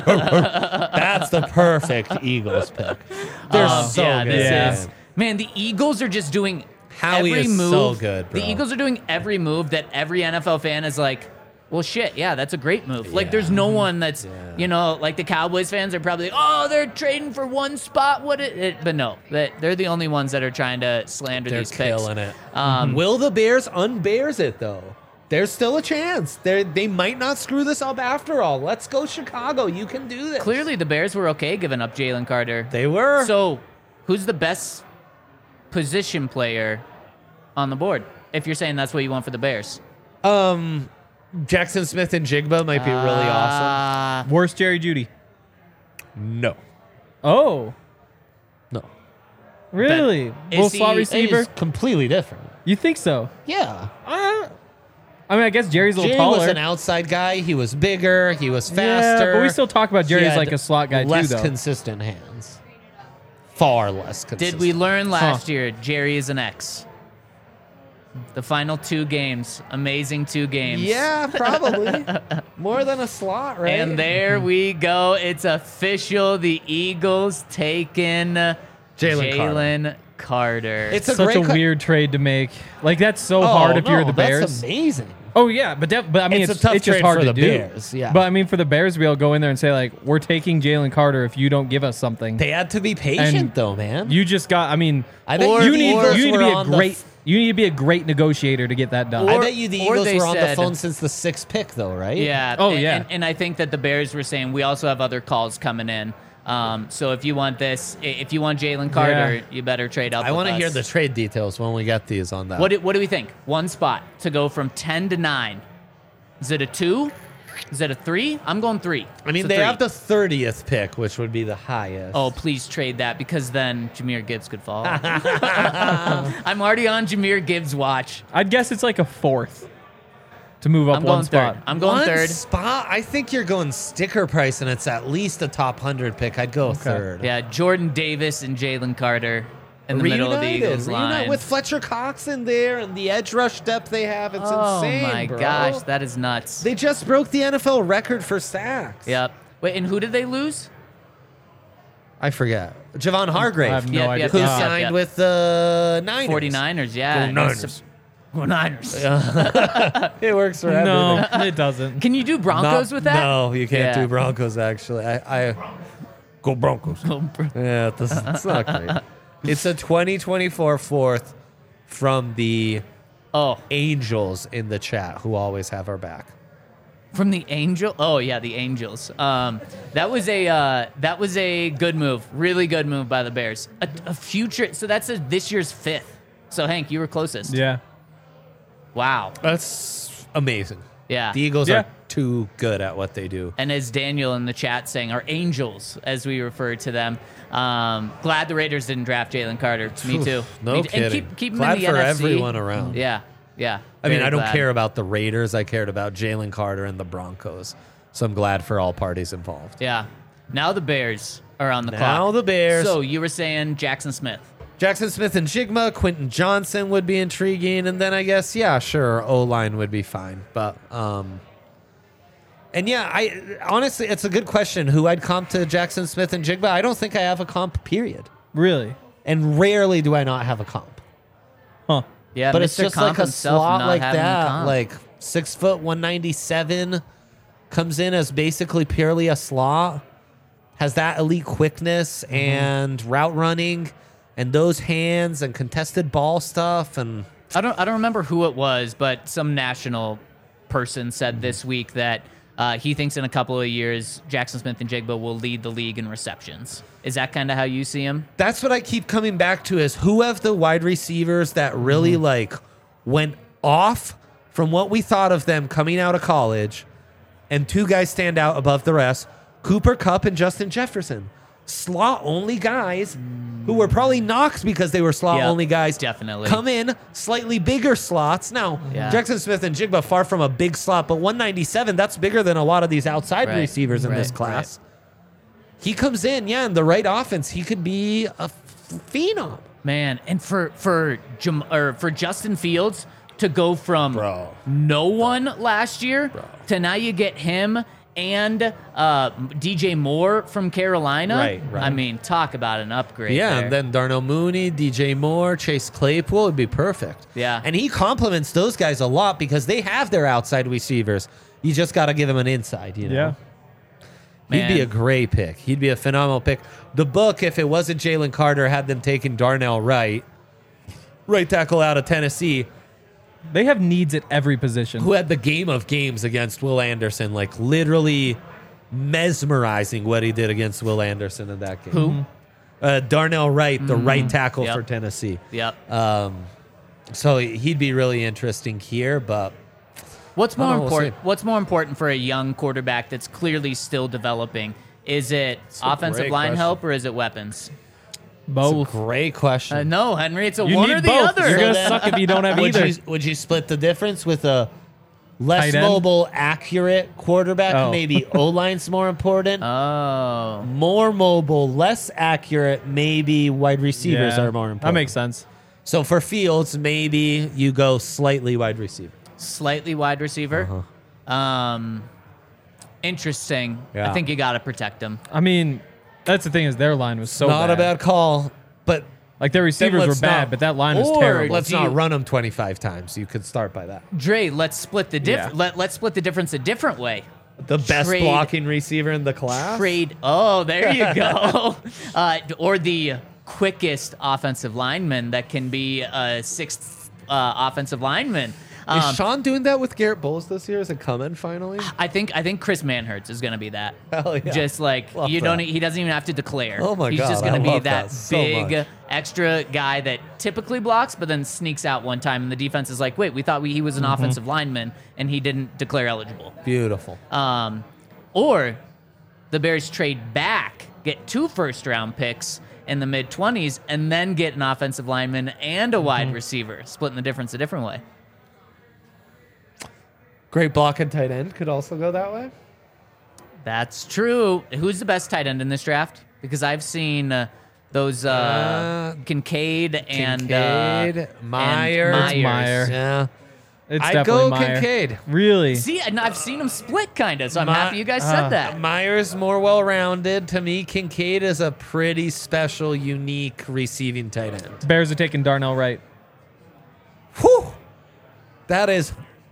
That's the perfect Eagles pick. They're so yeah, good. this is man. The Eagles are just doing Howie every is move. so good, bro. The Eagles are doing every move that every NFL fan is like, well, shit, yeah, that's a great move. Like, there's no one that's, you know, like the Cowboys fans are probably, oh, they're trading for one spot. But no, they're the only ones that are trying to slander They're these picks. killing it. Will the Bears unbears it, though? There's still a chance. They might not screw this up after all. Let's go, Chicago. You can do this. Clearly, the Bears were okay giving up Jalen Carter. They were. So, who's the best position player on the board? If you're saying that's what you want for the Bears. Jackson Smith and Jigba might be really awesome. Worst Jerry Judy. No. Oh, No. really? Is Well, he- slot receiver. He's completely different. You think so? Yeah. I mean, I guess Jerry's a little Jerry was taller. an outside guy. He was bigger. He was Yeah, faster. but we still talk about Jerry He as had like a slot guy too, less though. consistent hands. Far less consistent. Did we learn last year Jerry is an X? The final 2 games. Amazing 2 games. Yeah, probably. More than a slot, right? And there we go. It's official. The Eagles taking Jalen Carter. It's a Such great a weird trade to make. Like that's so hard if you're the Bears. That's amazing. Oh yeah, but I mean, It's it's a tough it's just trade hard for to the do. Bears, yeah. But I mean, for the Bears to be able to go in there and say like, we're taking Jalen Carter if you don't give us something. They had to be patient, And though, man. You just got. I mean, I bet you the need Eagles you need to were be a on the great. You need to be a great negotiator to get that done. I bet you the or Eagles they were on the said- phone since the 6th pick, though, right? Yeah. Oh, and, yeah. And I think that the Bears were saying we also have other calls coming in. So if you want this, if you want Jalen Carter, Yeah. you better trade up. I want to hear the trade details when we get these on that. What do we think? One spot to go from 10 to 9. Is it a 2? Is it a 3? I'm going 3. I mean, It's a they 3. have the 30th pick, which would be the highest. Oh, please trade that because then Jahmyr Gibbs could fall. I'm already on Jahmyr Gibbs' watch. I'd guess it's like a 4th to move up I'm one going spot. third. I'm going One third. spot? I think you're going sticker price, and it's at least a top 100 pick. I'd go third. Yeah, Jordan Davis and Jalen Carter. in the middle of the Eagles line. With Fletcher Cox in there and the edge rush depth they have. It's insane, Oh, my bro. gosh. That is nuts. They just broke the NFL record for sacks. Yep. Wait, and who did they lose? I forget. Javon Hargrave. I have no Yep, idea. yep, who yep, signed yep. with the Niners. 49ers, yeah. Go Niners. Go Niners. It works for No, everything. it doesn't. Can you do Broncos with that? No, you can't Yeah. do Broncos, actually. I Go Broncos. Yeah, it's not great. It's a 2024 fourth from the Angels in the chat, who always have our back. From the Angel? Oh yeah, the Angels. That was a good move, really good move by the Bears. A future. So that's this year's fifth. So Hank, you were closest. Yeah. Wow. That's amazing. Yeah. The Eagles Yeah. are too good at what they do. And as Daniel in the chat saying, our Angels, as we refer to them. Glad the Raiders didn't draft Jalen Carter. Me too. No kidding. And keep him Glad in the for NFC. everyone around. Yeah. Yeah. I mean, Very I don't glad. care about the Raiders. I cared about Jalen Carter and the Broncos. So I'm glad for all parties involved. Yeah. Now the Bears are on the clock. Now the Bears. So you were saying Jackson Smith. Jackson Smith and Jigma, Quentin Johnson would be intriguing, and then I guess, yeah, sure, O-line would be fine. But, and yeah, I honestly, it's a good question who I'd comp to Jackson Smith and Jigma. I don't think I have a comp, period. Really? And rarely do I not have a comp. Huh. Yeah, But Mr. it's just Comp like a himself slot not like having a that, comp. like 6 foot 197, comes in as basically purely a slot, has that elite quickness and route running, and those hands and contested ball stuff, and I don't remember who it was, but some national person said this week that he thinks in a couple of years Jackson Smith and Jigba will lead the league in receptions. Is that kind of how you see him? that's what I keep coming back to: is who have the wide receivers that really like went off from what we thought of them coming out of college, and 2 guys stand out above the rest: Cooper Kupp and Justin Jefferson. Slot only guys who were probably knocked because they were slot Yep, only guys. definitely. Come in slightly bigger slots. Now, Yeah. Jackson Smith and Jigba far from a big slot, but 197, that's bigger than a lot of these outside Right, receivers in this right, class. He comes in, yeah, in the right offense, he could be a phenom. Man, and for Justin Fields to go from Bro. no one last year to now you get him and DJ Moore from Carolina. Right. I mean, talk about an upgrade. Yeah, there. and then Darnell Mooney, DJ Moore, Chase Claypool would be perfect. Yeah. And he compliments those guys a lot because they have their outside receivers. You just got to give them an inside, you know? Yeah. He'd be Man. a great pick. He'd be a phenomenal pick. The book, if it wasn't Jalen Carter, had them taking Darnell Wright, right tackle out of Tennessee, They have needs at every position. who had the game of games against Will Anderson, like literally mesmerizing what he did against Will Anderson in that game. Who? Darnell Wright, the right tackle Yep. for Tennessee. Yep. So he'd be really interesting here, but What's more I don't know, we'll important? see. What's more important for a young quarterback that's clearly still developing? Is it a offensive great line question. help or is it weapons? it's a Both. great question. No, Henry. It's a You one need or the both. other. You're gonna then- suck if you don't have would either. would you split the difference with a less Tight end? mobile, accurate quarterback? Oh. Maybe O-line's more important. Oh. More mobile, less accurate, maybe wide receivers Yeah. are more important. That makes sense. So for Fields, maybe you go slightly wide receiver. Slightly wide receiver. Interesting. Yeah. I think you got to protect him. I mean, that's the thing is their line was so Not bad. a bad call, but Like their receivers were let's bad, not- but that line was Or terrible. let's Do not you- run them 25 times. You could start by that. Dre, let's split the Yeah. let's split the difference a different way. The best Trade- blocking receiver in the class. Trade. Oh, there you go. Or the quickest offensive lineman that can be a sixth offensive lineman. Is Sean doing that with Garrett Bowles this year? Is it coming finally? I think Chris Manhertz is going to be that. Hell yeah. Just like Love you don't that. he doesn't even have to declare. Oh my He's God, just going I to be love that that so big much. extra guy that typically blocks but then sneaks out one time and the defense is like, "Wait, we thought he was an Mm-hmm. offensive lineman and he didn't declare eligible." Beautiful. Or the Bears trade back, get 2 first-round picks in the mid-20s and then get an offensive lineman and a Mm-hmm. wide receiver, splitting the difference a different way. Great block and tight end could also go that way. That's true. Who's the best tight end in this draft? Because I've seen the those Kincaid and Myers. Yeah. It's I'd definitely go Meyer. Kincaid. Really? See, and I've seen them split kind of, so I'm happy you guys said that. Myers more well-rounded. To me, Kincaid is a pretty special, unique receiving tight end. Bears are taking Darnell Wright. Whew. That is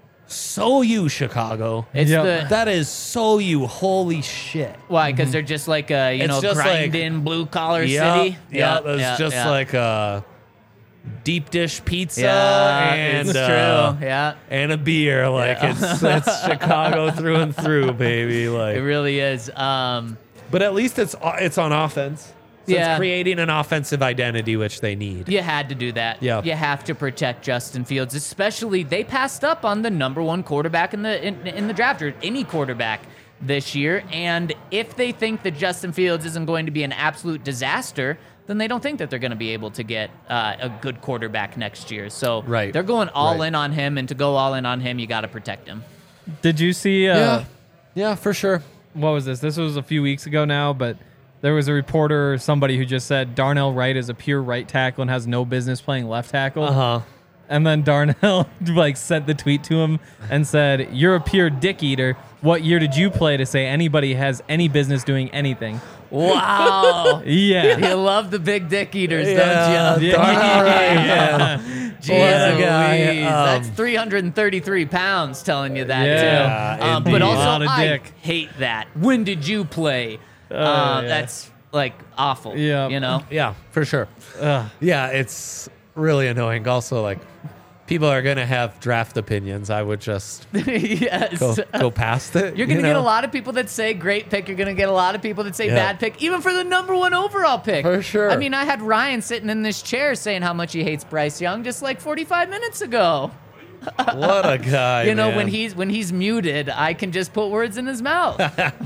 so you, Chicago. It's Yep. That is so you. Holy shit. why? Because they're just like a It's just grinding blue collar Yeah, city. yeah, it's just like a deep dish pizza it's true. Yeah, and a beer. Like it's Chicago through and through, baby. it Like, really is. but at least it's on offense. So Yeah. it's creating an offensive identity, which they need. You had to do that. Yeah. You have to protect Justin Fields, especially they passed up on the number one quarterback in the draft, or any quarterback this year. And if they think that Justin Fields isn't going to be an absolute disaster, then they don't think that they're going to be able to get a good quarterback next year. So Right. they're going all Right. in on him, and to go all in on him, you got to protect him. Did you see? Yeah, for sure. What was this? This was a few weeks ago now, but there was a reporter or somebody who just said Darnell Wright is a pure right tackle and has no business playing left tackle. Uh-huh. And then Darnell sent the tweet to him and said, "You're a pure dick eater. What year did you play to say anybody has any business doing anything?" Wow. Yeah. You love the big dick eaters, Yeah, don't you? Darnell Wright, yeah. Jeez What a guy. Louise. That's 333 pounds telling you that, Yeah, too. indeed. But A also, lot of I dick. hate that. When did you play? Yeah. That's, like, awful. Yeah. You know? Yeah, for sure. Ugh. Yeah, it's really annoying. Also, like, people are going to have draft opinions. I would just Yes. go past it. You're going to get a lot of people that say great pick. You're going to get a lot of people that say Yeah. bad pick, even for the number one overall pick. For sure. I mean, I had Ryan sitting in this chair saying how much he hates Bryce Young just like 45 minutes ago. What a guy, You know, man. when he's muted, I can just put words in his mouth.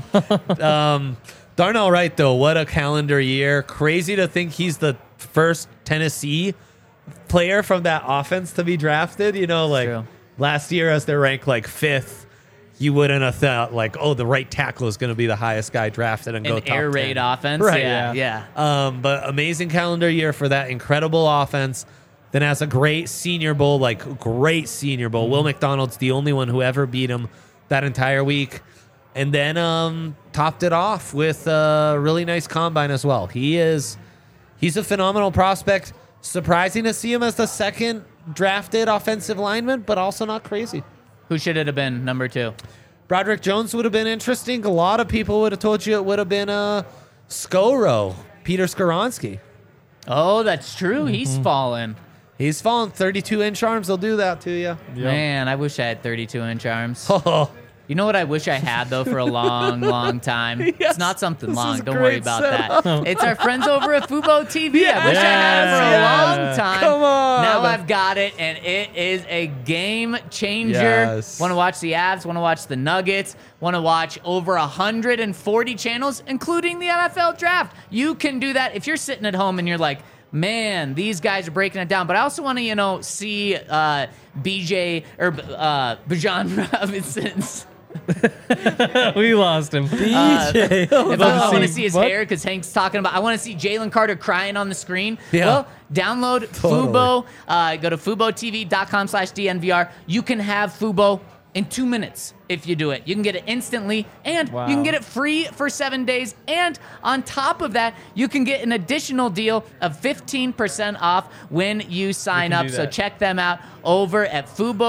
Darnell Wright, though, what a calendar year. Crazy to think he's the first Tennessee player from that offense to be drafted. You know, like True. last year as they're ranked like fifth, you wouldn't have thought like, oh, the right tackle is going to be the highest guy drafted and go An top air 10. raid offense. Right. Yeah. But amazing calendar year for that incredible offense. Then has a great Senior Bowl, Will McDonald's the only one who ever beat him that entire week. And then topped it off with a really nice combine as well. He's a phenomenal prospect. Surprising to see him as the second drafted offensive lineman, but also not crazy. Who should it have been number 2? Broderick Jones would have been interesting. A lot of people would have told you it would have been Skoro, Peter Skoronsky. Oh, that's true. He's fallen. He's fallen 32-inch arms. They'll do that to you. Man, I wish I had 32-inch arms. Oh, You know what I wish I had, though, for a long, long time? It's not something long. Don't worry great about setup. that. It's our friends over at Fubo TV. I wish I had it for a Yes. long time. Come on. Now I've got it, and it is a game changer. Yes. Want to watch the Avs, want to watch the Nuggets, want to watch over 140 channels, including the NFL draft. You can do that if you're sitting at home and you're like, man, these guys are breaking it down. But I also want to, see BJ or Bijan Robinson's. We lost him. If I want to see- see his what? hair, because Hank's talking about, I want to see Jalen Carter crying on the screen. Yeah. Well, download Totally. Fubo. Go to FuboTV.com/DNVR. You can have Fubo in 2 minutes if you do it. You can get it instantly, and Wow. you can get it free for 7 days. And on top of that, you can get an additional deal of 15% off when you sign can up. do So that. check them out over at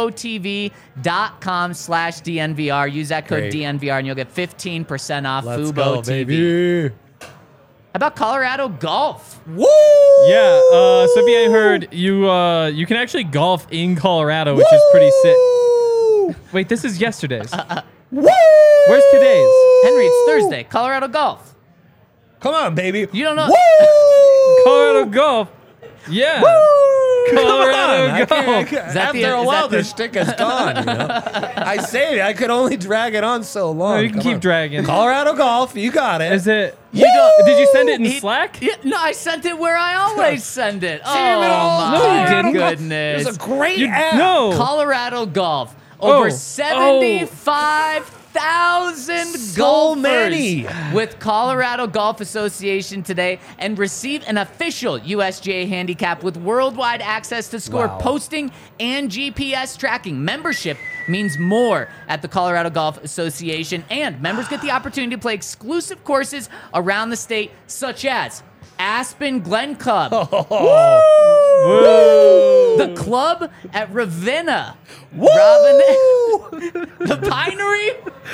FuboTV.com/DNVR. Use that code Great. DNVR and you'll get 15% off let's Fubo go, TV. baby. How about Colorado golf? Woo! Yeah. So if you ain't heard, you can actually golf in Colorado, which is pretty sick. Wait, this is yesterday's. Woo! Where's today's? Henry, it's Thursday. Colorado golf. Come on, baby. You don't know. Woo! Colorado golf. Yeah. Colorado golf. that After the- a is while, that the- the shtick is gone. You know? I say it. I could only drag it on so long. No, you can Come keep on. dragging. Colorado golf. You got it. Is it? You don't- Did you send it in He- Slack? Yeah, no, I sent it where I always send it. Oh, Damn it all. my No, you didn't. goodness. It's a great You- app. no. Colorado golf. Over Oh. 75 1,000 So golfers many. with Colorado Golf Association today and receive an official USGA handicap with worldwide access to score Wow. posting and GPS tracking. Membership means more at the Colorado Golf Association, and members get the opportunity to play exclusive courses around the state, such as Aspen Glen Club, the club at Ravenna, the Pinery,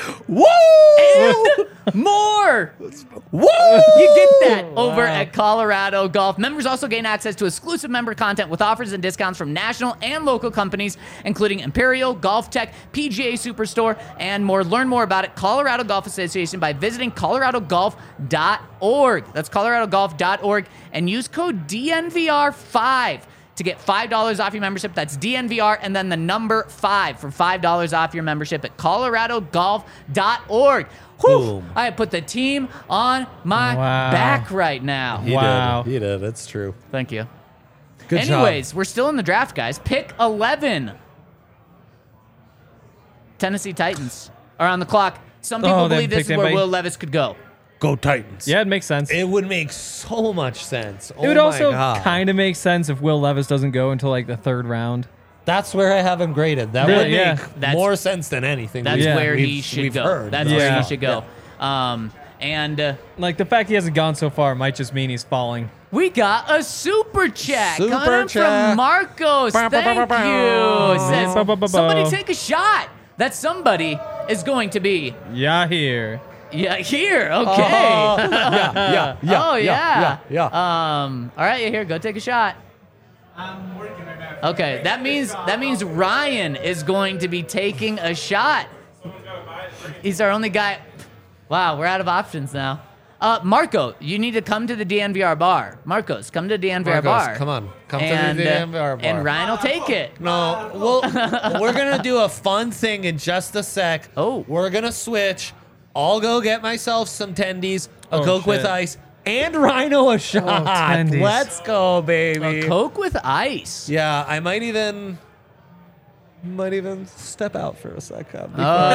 and more. You get that over at Colorado Golf. Members also gain access to exclusive member content with offers and discounts from national and local companies, including Imperial, Golf Tech, PGA Superstore, and more. Learn more about it, Colorado Golf Association, by visiting coloradogolf.org. That's coloradogolf.org, and use code DNVR5 to get $5 off your membership. That's DNVR and then the number 5 for $5 off your membership at coloradogolf.org. Whew, Boom. I have put the team on my back right now. He did. It's true. Thank you. Good Anyways, job. we're still in the draft, guys. Pick 11. Tennessee Titans are on the clock. Some people they believe this picked is where anybody? Will Levis could go. Go Titans. Yeah, it makes sense. It would make so much sense. It would also kind of make sense if Will Levis doesn't go until like the 3rd round. That's where I have him graded. That Really? would Yeah. make more sense than anything. That's Yeah. where he we've should go. heard. That's Yeah. where he should go. And Like the fact he hasn't gone so far might just mean he's falling. we got a super chat Super coming chat. from Marcos. Thank you. Says, Ba-ba-ba-ba. somebody take a shot. That somebody is going to be Yahir. here. Okay. yeah, Oh yeah. yeah. All right, here, go take a shot. I'm working right now. Okay, that means Ryan is going to be taking a shot. Someone's got to buy it. He's our only guy. Wow, we're out of options now. Marco, you need to come to the DNVR bar. Marcos, come to the DNVR bar. Come on. Come and, to the DNVR bar. And Ryan will take it. No, we're going to do a fun thing in just a sec. Oh. We're going to switch. I'll go get myself some tendies, a Oh, Coke with shit. ice, and Rhino a shot. tendies. Let's go, baby. A Coke with ice. Yeah, I might even step out for a second.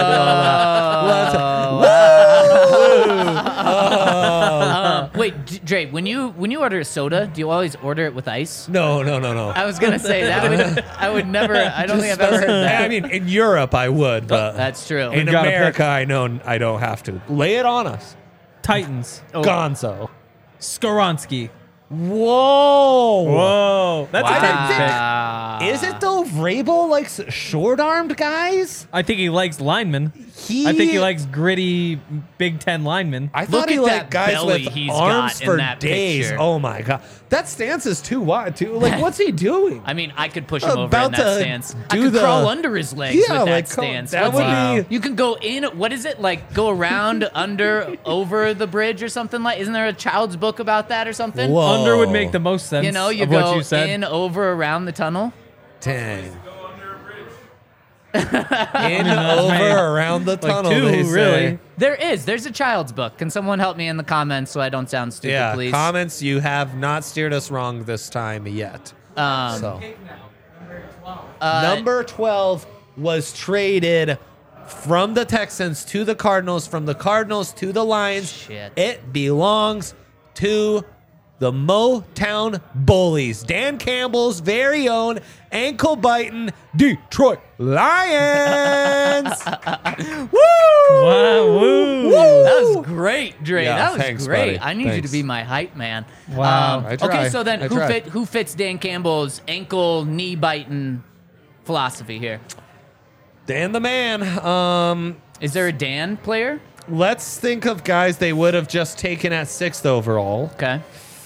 Wait, Dre, when you order a soda, do you always order it with ice? No. I was gonna say that. I would never. I don't think I've ever heard that. I mean, in Europe, I would, but That's true. in gotta America, I know I don't have to. Lay it on us. Titans. Gonzo. Skoronsky. Whoa. Whoa. That's I a didn't Titans Wow. pick. Is it though? Vrabel likes short-armed guys. I think he likes linemen. I think he likes gritty Big Ten linemen. I thought Look he at liked that guys belly with he's arms got in for that days. picture. Oh my god, that stance is too wide. Too like, what's he doing? I mean, I could push him over About in that to stance. I do could the- crawl under his legs Yeah, with that like, stance. that What's would be- You can go in. What is it like? Go around, under, over the bridge or something like? Isn't there a child's book about that or something? Whoa. Under would make the most sense. You know, you of go what you said. in, over, around the tunnel. Dang. Go under a bridge. In, that's over, right. around the Like tunnel. two, they say. really. There's a child's book. Can someone help me in the comments so I don't sound stupid, Yeah. please? Comments. You have not steered us wrong this time yet. So. Take now. Number 12. Number 12 was traded from the Texans to the Cardinals, from the Cardinals to the Lions. Shit. It belongs to the Motown Bullies. Dan Campbell's very own ankle-biting Detroit Lions. Woo! Wow, woo. That was great, Dre. Yeah, that was thanks, great. buddy. I need you to Thanks. be my hype man. Wow. I try. Okay, so then I try. who fits Dan Campbell's ankle knee biting philosophy here? Dan the man. Is there a Dan player? Let's think of guys they would have just taken at 6th overall. Okay.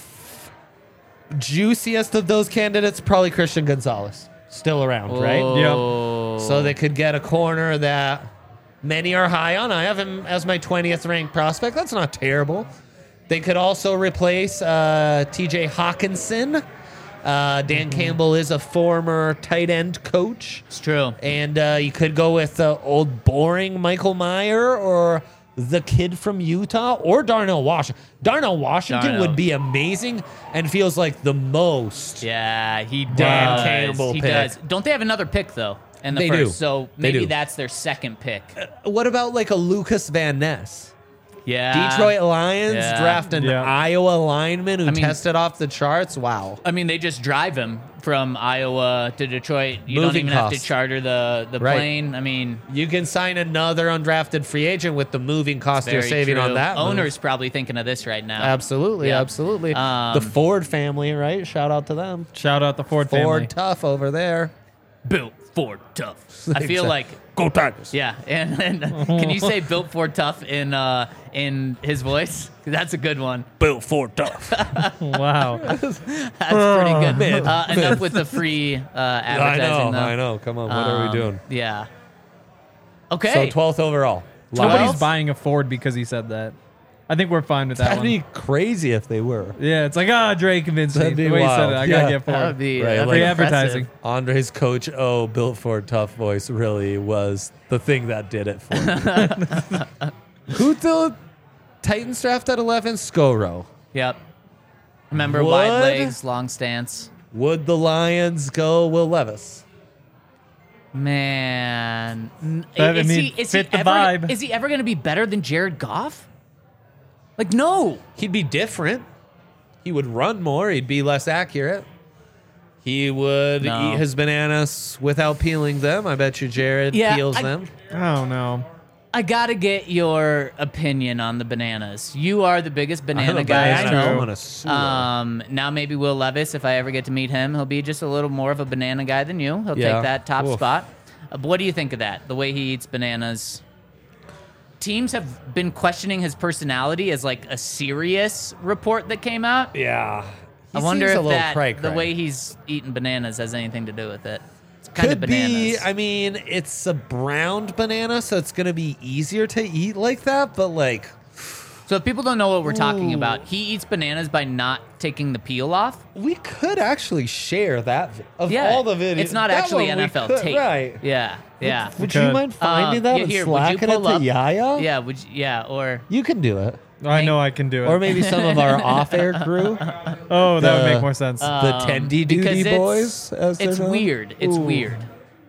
Juiciest of those candidates, probably Christian Gonzalez. Still around, right? Oh. So they could get a corner that many are high on. I have him as my 20th ranked prospect. That's not terrible. They could also replace TJ Hawkinson. Dan Campbell is a former tight end coach. It's true. And you could go with old boring Michael Meyer or the kid from Utah or Darnell Washington. Darnell Washington Darnell. would be amazing and feels like the most. Yeah, he does. Dan Campbell He pick. does. Don't they have another pick though? in the They first. do. So They maybe do. that's their second pick. What about like a Lucas Van Ness? Yeah. Detroit Lions yeah. draft an Yeah. Iowa lineman who mean- tested off the charts. Wow. I mean, they just drive him from Iowa to Detroit. You don't Moving even have costs. to charter the Right. plane. I mean, You can sign another undrafted free agent with the moving cost you're very saving true. on that. move. Owner's probably thinking of this right now. Absolutely, Yeah. absolutely. Um, the Ford family, right? Shout out to them. Shout out the Ford Ford family. tough over there. Built Ford tough. I feel Exactly. like Go Tigers. yeah. And can you say built Ford tough in his voice? That's a good one. Built Ford tough. Wow. That's pretty good. man. Enough with the free advertising. though. I know. Come on, what are we doing? Yeah. Okay. So 12th overall. Nobody's 12? buying a Ford because he said that. I think we're fine with that That'd one. be crazy if they were. Yeah, it's like, Dre convinced me. That'd be The way he said wild. it, I Yeah. gotta get Ford. that would be Right, that'd like be Free impressive. advertising. Andre's Coach O, Built Ford tough voice really was the thing that did it for me. Who the Titans draft at 11? Scoro. Yep. Remember wide Would- legs, long stance. Would the Lions go Will Levis? Man, That, I is mean, he fit the ever? vibe. Is he ever going to be better than Jared Goff? Like, no. He'd be different. He would run more. He'd be less accurate. He would No. eat his bananas without peeling them. I bet you Jared peels them. I don't know. I gotta get your opinion on the bananas. You are the biggest I'm banana a guy I banana. I'm know. gonna sue him. Now maybe Will Levis, if I ever get to meet him, he'll be just a little more of a banana guy than you. He'll Yeah. take that top Oof. spot. But what do you think of that? The way he eats bananas. Teams have been questioning his personality as like a serious report that came out. Yeah. I wonder if that the way he's eating bananas has anything to do with it. It's kind of could bananas. be. I mean, it's a browned banana, so it's gonna be easier to eat like that. But like, So if people don't know what we're talking Ooh. about, he eats bananas by not taking the peel off. we could actually share that of Yeah, all the videos. it's not that actually one we NFL could- tape. right? Yeah, yeah. Would Okay. you mind finding that yeah, and here, would you slacking it pull to up? Yaya? Yeah, would you, yeah, or You can do it. I know I can do it. Or maybe some of our off-air crew, oh, that would the- make more sense. the Tendy because Duty it's- boys. As they're it's known. weird. It's Ooh. weird.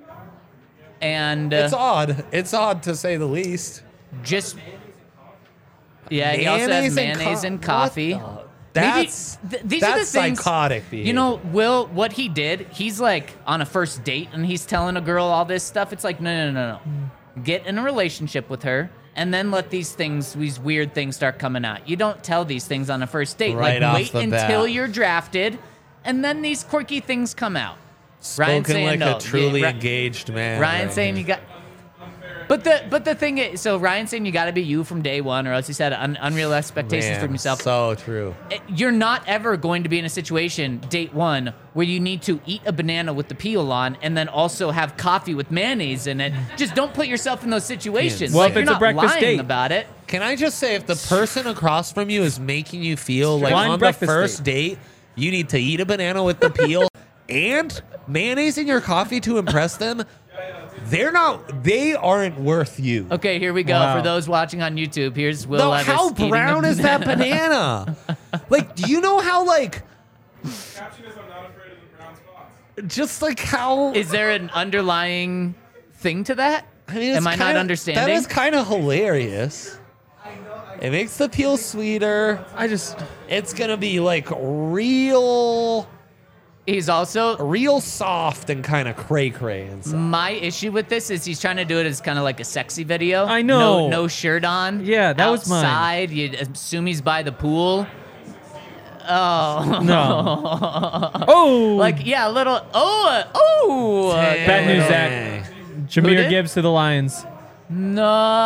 And It's odd. It's odd to say the least. just yeah, he also has mayonnaise and coffee. What the- That's These are the that's things, psychotic behavior. You know, Will, what he did, he's like on a first date and he's telling a girl all this stuff. It's like, no. Get in a relationship with her and then let these weird things start coming out. You don't tell these things on a first date. Right like, off wait the until bat. you're drafted and then these quirky things come out. Ryan Spoken saying like no. a truly Yeah, engaged man. Ryan right saying here. you got. But the thing is, so Ryan saying you got to be you from day one, or else he said unreal expectations Man, from yourself. So true. You're not ever going to be in a situation, date one, where you need to eat a banana with the peel on and then also have coffee with mayonnaise in it. Just don't put yourself in those situations. Well, Like, if you're it's a not breakfast lying date. about it. Can I just say, if the person across from you is making you feel like Blind on the breakfast first date, you need to eat a banana with the peel and mayonnaise in your coffee to impress them, they aren't worth you. Okay, here we go. Wow. For those watching on YouTube, here's Will No, Levis how eating a brown is that banana. banana? Like, do you know how, like, Caption is I'm not afraid of the brown spots. just like how. Is there an underlying thing to that? I mean, it's Am I not kinda- understanding? That is kind of hilarious. It makes the peel sweeter. It's gonna be like real He's also soft and kind of cray inside. my issue with this is he's trying to do it as kind of like a sexy video. I know. No shirt on. Yeah, that was mine. outside. You assume he's by the pool. Oh No. Oh! like yeah, a little. Bad news, Zach. Dang. Who Jameer did? Gibbs to the Lions. No.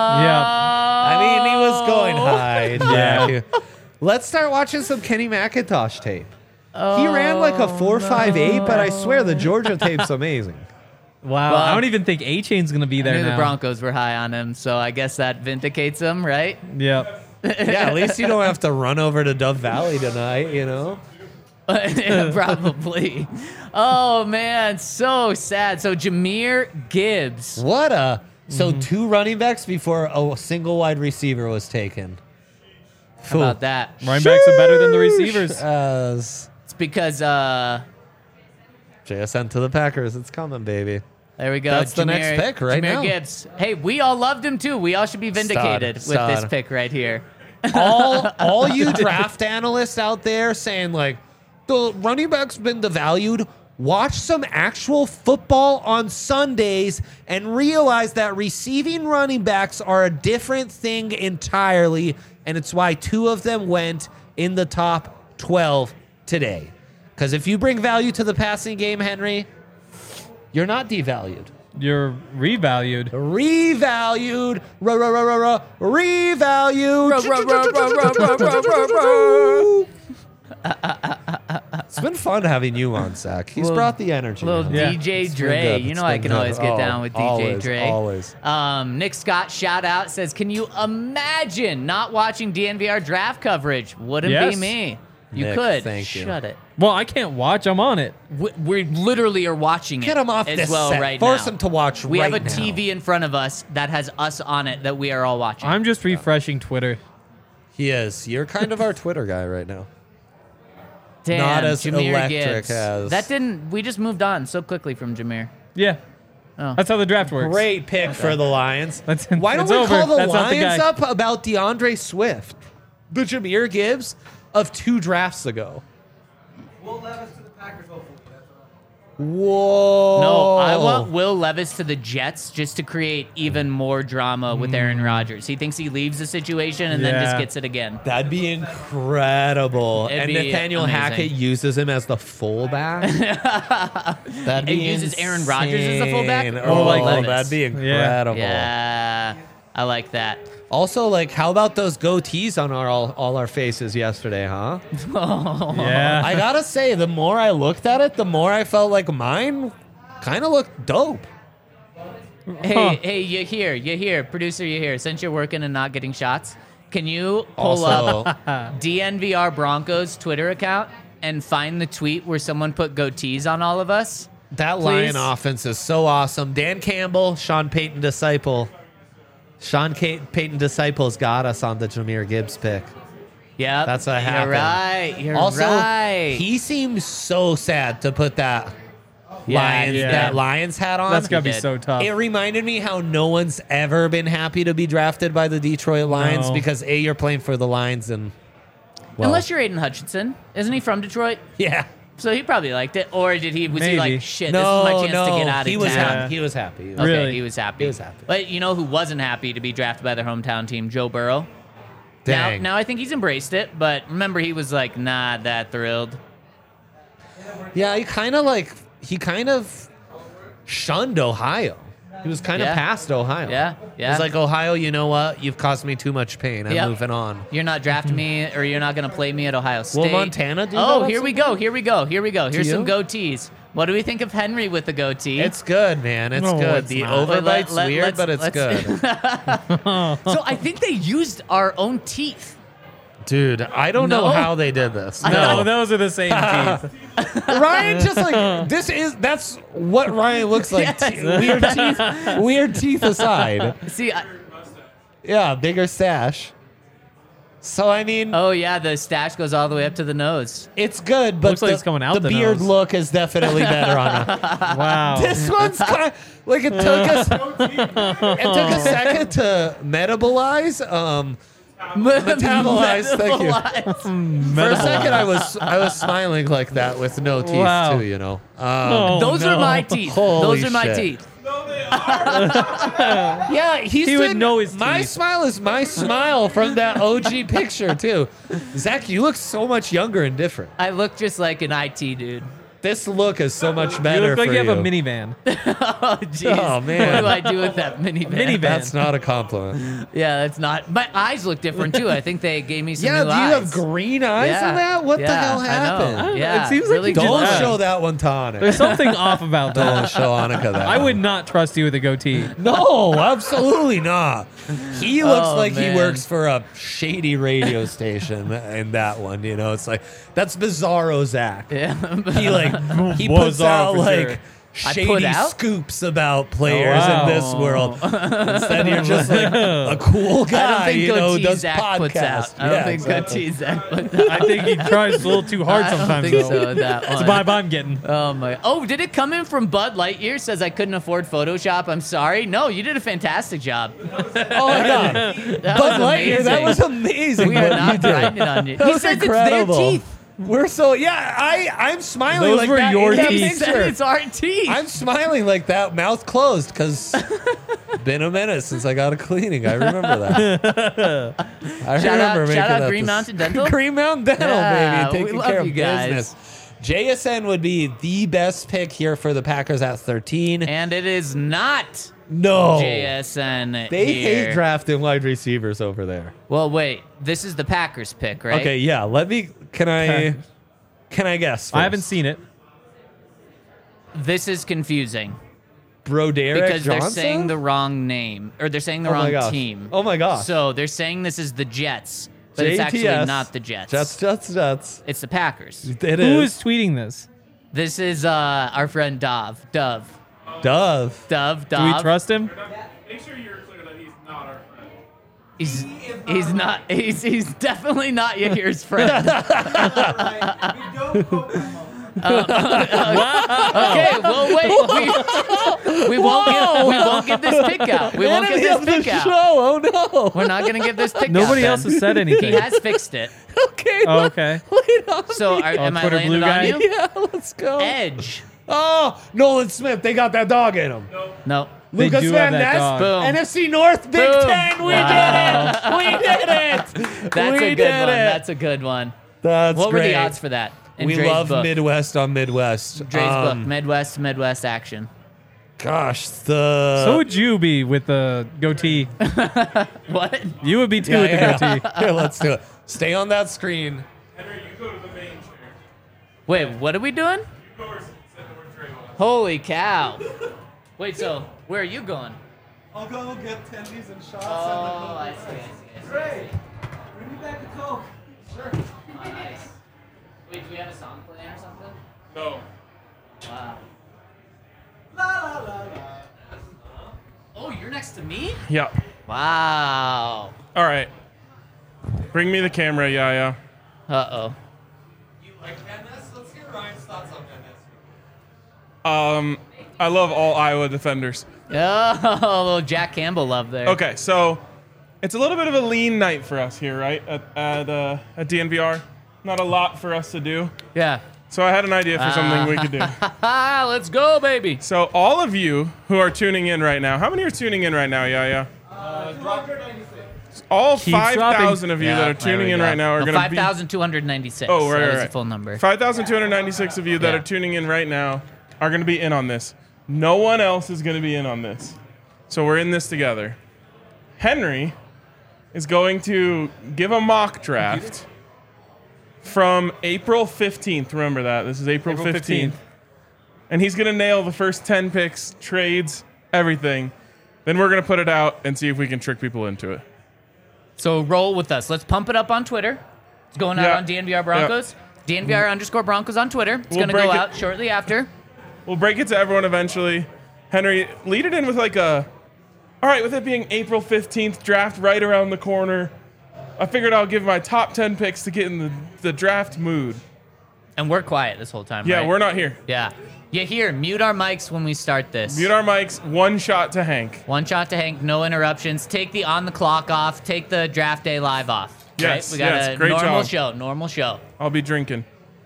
I mean, he was going high. Yeah. Jack. Let's start watching some Kenny McIntosh tape. He ran like a 4.58, but I swear the Georgia tape's amazing. Wow. Well, I don't even think A-Chain's going to be I there knew now. the Broncos were high on him, so I guess that vindicates him, right? Yep. Yeah, at least you don't have to run over to Dove Valley tonight, you know? Yeah, probably. Oh man, so sad. So Jameer Gibbs. What a. So 2 running backs before a single wide receiver was taken. How about that? Running backs are better than the receivers. As It's because JSN to the Packers, it's coming, baby. There we go. That's the next pick right Jahmyr now. Gibbs. Hey, we all loved him too. We all should be vindicated with this Stud. pick right here. all you draft analysts out there saying like the running back's been devalued. Watch some actual football on Sundays and realize that receiving running backs are a different thing entirely, and it's why 2 of them went in the top 12 today. Because if you bring value to the passing game, Henry, you're not devalued. You're revalued. Revalued. Revalued. It's been fun having you on, Zach. He's brought the energy. Little Yeah. DJ It's been Dre. good. You It's know I been can good. always get down with DJ always, Dre. Always. Nick Scott, shout out, says, can you imagine not watching DNVR draft coverage? Wouldn't Yes. be me. You Nick, could. thank you. Shut it. Well, I can't watch. I'm on it. We literally are watching Get it him off as this well set. right Force now. him to watch We right have a now. TV in front of us that has us on it that we are all watching. I'm just refreshing Twitter. He is. You're kind of our Twitter guy right now. Damn, not as Jahmyr electric Gibbs. as- That didn't. We just moved on so quickly from Jahmyr. Yeah. Oh. That's how the draft works. Great pick for the Lions. That's- Why don't it's we over. call the That's not the Lions guy. up about DeAndre Swift, the Jahmyr Gibbs of 2 drafts ago? Will Levis to the Packers, hopefully. That's what Whoa. No, I want Will Levis to the Jets just to create even more drama with Aaron Rodgers. He thinks he leaves the situation and then just Yeah. gets it again. That'd be incredible. It'd and be Nathaniel amazing. Hackett uses him as the fullback. That'd It be uses Aaron Rodgers as the fullback? insane. Or Oh, like Levis? that'd be incredible. Yeah, I like that. Also, like, how about those goatees on all our faces yesterday, huh? Yeah. I gotta say, the more I looked at it, the more I felt like mine kind of looked dope. Hey, you here, producer, you here. Since you're working and not getting shots, can you pull Also, up DNVR Broncos Twitter account and find the tweet where someone put goatees on all of us? that Please? Lion offense is so awesome. Dan Campbell, Sean Payton disciple. Payton disciples got us on the Jahmyr Gibbs pick. Yeah, That's what happened. You're right. You're Also, right. he seems so sad to put that Lions hat on. That's gotta He be did. so tough. It reminded me how no one's ever been happy to be drafted by the Detroit Lions No. because A, you're playing for the Lions and well, Unless you're Aiden Hutchinson, isn't he from Detroit? yeah. So he probably liked it, or was he Maybe. like, shit, No, this is my chance no, to get out of he was town? happy. He was happy. He was Okay, Really? he was happy. He was happy. But you know who wasn't happy to be drafted by their hometown team? Joe Burrow. Dang. Now I think he's embraced it, but remember he was like not that thrilled. Yeah, he kind of shunned Ohio. He was kind of Yeah. past Ohio. Yeah, He yeah. was like, Ohio, you know what? You've caused me too much pain. I'm Yep. moving on. You're not drafting me, or you're not going to play me at Ohio State. Will Montana do Oh, that here at we some go. point? Here we go. Here we go. Here's some you? goatees. What do we think of Henry with the goatee? It's good, man. It's No, good. it's The not. overbite's Let- weird, let's- but it's let's- good. so I think they used our own teeth. Dude, I don't know No? how they did this. No, those are the same teeth. Ryan just like that's what Ryan looks like. Yes. Weird teeth aside. See, Yeah, bigger stash. So I mean, oh yeah, the stash goes all the way up to the nose. it's good, but Looks like it's coming out the the beard nose. look is definitely better on a. Wow. This one's kind of like it took us. It took a second to metabolize. Metabolize, thank you. For a second, I was smiling like that with no teeth Wow. too. You know. Oh, Those no. are my teeth. Holy Those are my shit. teeth. Yeah, He would know his My teeth. smile is my smile from that OG picture too. Zach, you look so much younger and different. I look just like an IT dude. This look is so much You better look like for you have a minivan. Oh jeez. Oh, man. What do I do with that minivan? Minivan. That's not a compliment. Yeah, that's not. My eyes look different too. I think they gave me some Yeah, new do you eyes. have green eyes Yeah. in that? What the Yeah, hell I know. happened? Yeah, It seems like really you good Don't Yeah. show that one to There's Annika. something off about Don't that. show Annika that. I would not trust you with a goatee. No, absolutely not. He looks Oh, like man. he works for a shady radio station in that one. You know, it's like that's Bizarro Zach. Yeah. He puts Bizarro out for like sure. shady scoops about players in this world. Instead, you're just like a cool guy, does Zach puts podcasts. out. I don't think Goatee Zach puts out. I think he tries a little too hard sometimes. I don't think so with that one. It's a vibe I'm getting. Oh my! Oh, did it come in from Bud Lightyear? Says I couldn't afford Photoshop. I'm sorry. No, you did a fantastic job. Oh my god, Bud Lightyear, that was amazing. We are not grinding on you. That He was says incredible. it's their teeth. We're so I'm smiling Those like were that. your in that teeth. He said picture. it's our teeth. I'm smiling like that, mouth closed, because been a minute since I got a cleaning. I remember that. Shout out Green Mountain Dental. Green Mountain Dental, Yeah, baby, we taking love care you of guys. business. JSN would be the best pick here for the Packers at 13. And it is not No, JSN. they here. hate drafting wide receivers over there. Well, wait. This is the Packers pick, right? Okay, yeah. Can I guess? First? I haven't seen it. This is confusing Broderick because they're Johnson? saying the wrong name, or they're saying the Oh my wrong gosh. team. Oh my gosh. So they're saying this is the Jets, but it's actually JTS. not the Jets. Jets. It's the Packers. It Who is. is tweeting this? This is our friend Dove. Dove. Do we trust him? Make sure you're clear that he's not our friend. He's not. He's definitely not Yahir's friend. Okay, well wait. We won't give this pick out. We won't give Enemy this of the pick out. show. Oh no. We're not gonna give this pick out. Nobody then. else has said He anything. has fixed it. Okay. Oh, okay. Wait on So me. am I Twitter laying blue it guy? on you? Yeah, let's go. Edge. Oh, Nolan Smith. They got that dog in him. No. They Lucas do Van have that Ness. dog. Boom. NFC North Big Boom. Ten. We Wow. did it. We did it. That's We a good did one. it. That's a good one. That's What were great. the odds for that? In We Dre's love book. Midwest on Midwest. Dre's book. Midwest action. Gosh, So would you be with the goatee? What? You would be too with the goatee. Here, let's do it. Stay on that screen. Henry, you go to the main chair. Wait, what are we doing? You go where Trey was. Holy cow. Wait, so where are you going? I'll go get tendies and shots. Oh, I see. Great. Bring me back a Coke. Sure. Oh, nice. Wait, do we have a song playing or something? No. Wow. La la la la. Oh, you're next to me? Yeah. Wow. All right. Bring me the camera, Yaya. Uh-oh. You like Van Ness? Let's hear Ryan's thoughts on Van Ness. I love all Iowa defenders. Oh, a little Jack Campbell love there. Okay, so it's a little bit of a lean night for us here, right? At DNVR. Not a lot for us to do. Yeah. So I had an idea for something we could do. Let's go, baby. So all of you who are tuning in right now, how many are tuning in right now, Yaya? All Keep 5,000 of you Yeah, that are there tuning we in go. right now are No, going to be... 5,296. Oh, right, That was right. the full number. 5,296 of you that Yeah. are tuning in right now are going to be in on this. No one else is going to be in on this. So we're in this together. Henry is going to give a mock draft from April 15th. Remember that. This is April 15th. And he's going to nail the first 10 picks, trades, everything. Then we're going to put it out and see if we can trick people into it. So roll with us. Let's pump it up on Twitter. It's going out Yeah. on DNVR Broncos. DNVR_Broncos on Twitter. It's We'll going to go break it. out shortly after. We'll break it to everyone eventually. Henry, lead it in with like a... All right, with it being April 15th, draft right around the corner, I figured I'll give my top 10 picks to get in the draft mood. And we're quiet this whole time, Yeah, right? we're not here. Yeah. Yeah, here, mute our mics when we start this. Mute our mics, one shot to Hank. One shot to Hank, no interruptions. Take the on the clock off. Take the draft day live off. Yes, right? We got yes, a great normal job. Normal show. I'll be drinking.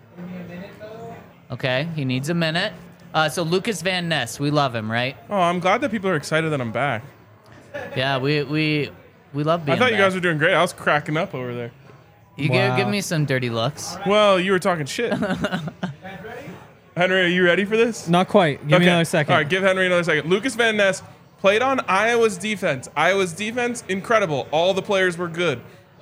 Okay, he needs a minute. So Lucas Van Ness, we love him, right? Oh, I'm glad that people are excited that I'm back. Yeah, we love being I thought you back. guys were doing great. I was cracking up over there. You Wow. give me some dirty looks. Well, you were talking shit. Henry, are you ready for this? Not quite. Give me Okay. another second. All right, give Henry another second. Lucas Van Ness played on Iowa's defense. Iowa's defense, incredible. All the players were good.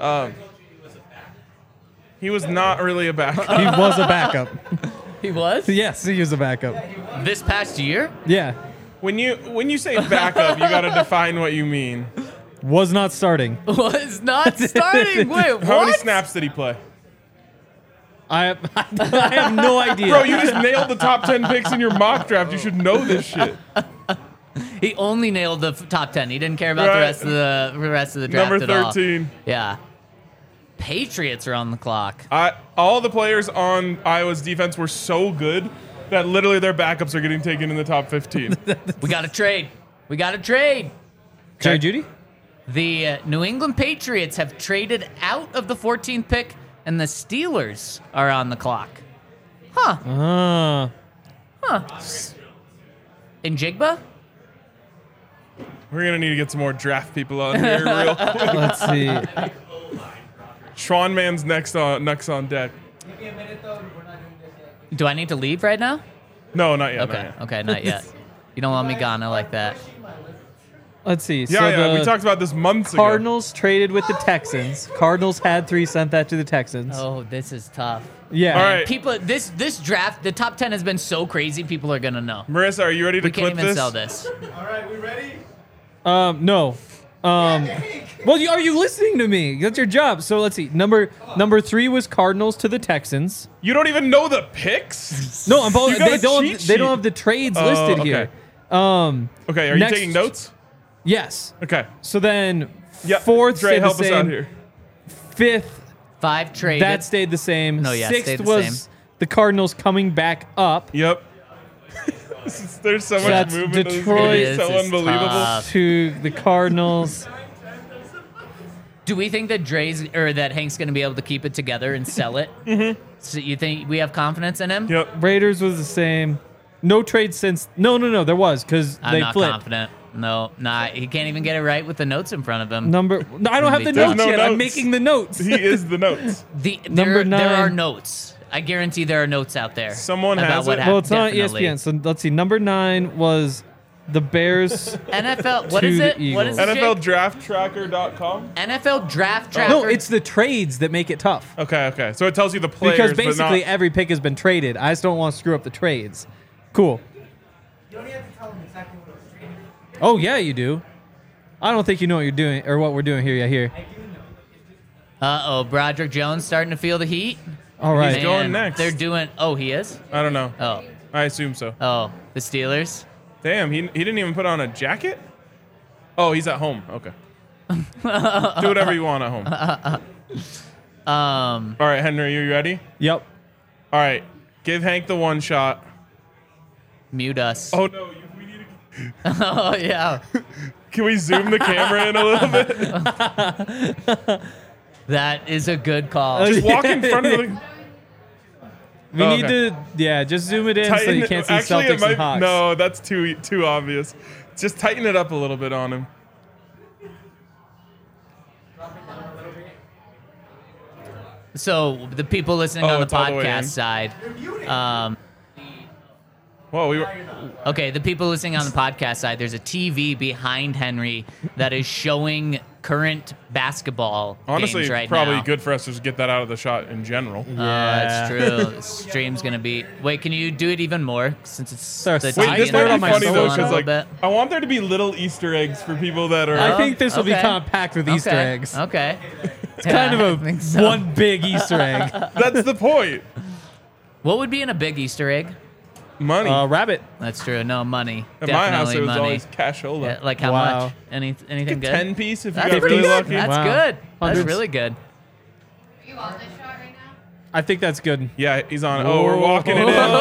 He was not really a backup. He was a backup. He was? Yes, he was a backup. This past year? Yeah. When you say backup, you got to define what you mean. Was not starting. Was not starting. Wait, what? How many snaps did he play? I have no idea. Bro, you just nailed the top 10 picks in your mock draft. You should know this shit. He only nailed the top 10. He didn't care about the rest of the draft Number at all. 13. Yeah. Patriots are on the clock. All the players on Iowa's defense were so good that literally their backups are getting taken in the top 15. We got to trade. We got to trade. Jerry Judy? The New England Patriots have traded out of the 14th pick, and the Steelers are on the clock. Huh. In Jigba? We're going to need to get some more draft people on here real quick. Let's see. Schwan Man's next on deck. Do I need to leave right now? No, not yet. Okay. Not yet. Okay, not yet. You don't want me gone. I like that. Let's see. Yeah, we talked about this months ago. Cardinals traded with the Texans. Cardinals had 3, sent that to the Texans. Oh, this is tough. Yeah. All right. People, this draft, the top 10 has been so crazy. People are gonna know. Marissa, are you ready to We can't clip even this? sell this. All right, we ready? No. Well, are you listening to me? That's your job. So let's see. Number 3 was Cardinals to the Texans. You don't even know the picks? No, I'm You got they a don't. cheat They don't sheet. have the trades Oh, listed okay. here. Okay, are you Next- taking notes? Yes. Okay. So then, Yeah. fourth Dre, stayed help the us out same. here. Fifth, 5 traded. that stayed the same. No, yeah, Sixth stayed the was same. the Cardinals coming back up Yep. There's so much That's movement. This is Detroit. gonna be This so is unbelievable. tough. to the Cardinals. Do we think that that Hank's gonna be able to keep it together and sell it? Mm-hmm. So you think we have confidence in him? Yep. Raiders was the same. No trade since. No. There was because I'm they not flipped. confident. No, he can't even get it right with the notes in front of him. No, I don't have the There's notes no yet. I'm notes. making the notes. He is the notes. Number There are 9. notes. I guarantee there are notes out there. Someone about has what it? Well, it's not definitely. ESPN. So let's see. Number 9 was the Bears. NFL. What To is the it? What is it? Eagles. Jake? NFLDraftTracker.com. NFL Draft Tracker. No, it's the trades that make it tough. Okay. So it tells you the players, Because but basically not. every pick has been traded. I just don't want to screw up the trades. Cool. You don't have to tell them exactly what it's trading. Oh yeah, you do. I don't think you know what you're doing or what we're doing here yet. Here. I do know. Uh-oh, Broderick Jones starting to feel the heat. All right. He's going next. They're doing. Oh, he is. I don't know. Oh, I assume so. the Steelers. Damn, he didn't even put on a jacket? Oh, he's at home. Okay. Do whatever you want at home. All right, Henry, you ready? Yep. All right. Give Hank the one shot. Mute us. Oh, no. We need to. Oh, yeah. Can we zoom the camera in a little bit? That is a good call. Just walk in front of the. We Oh, need okay. to, just zoom it in so you can't see Actually, Celtics and Hawks. No, that's too obvious. Just tighten it up a little bit on him. So the people listening Oh, on the it's all the way in. podcast side. Whoa, we were. Okay, the people listening on the podcast side, there's a TV behind Henry that is showing current basketball Honestly, games right it's probably now. good for us to just get that out of the shot in general. That's true. The stream's gonna be. Wait, can you do it even more since it's There are the sides TV Wait, this and the might on be my mic's funny still though, on a because little like bit? I want there to be little Easter eggs for people that are. I think this will be okay. kind of packed with Easter Okay, eggs. Okay. Kind I of a think so. one big Easter egg. That's the point. What would be in a big Easter egg? Money. Rabbit. That's true. No money. At my house, Definitely it was money. always cashola. Yeah, like how Wow. much? Anything good? 10 piece if you That's got really good. lucky. That's Wow. good. That's Hundreds. really good. Are you on this shot right now? I think that's good. Yeah, he's on it. Oh, we're walking it in. Oh.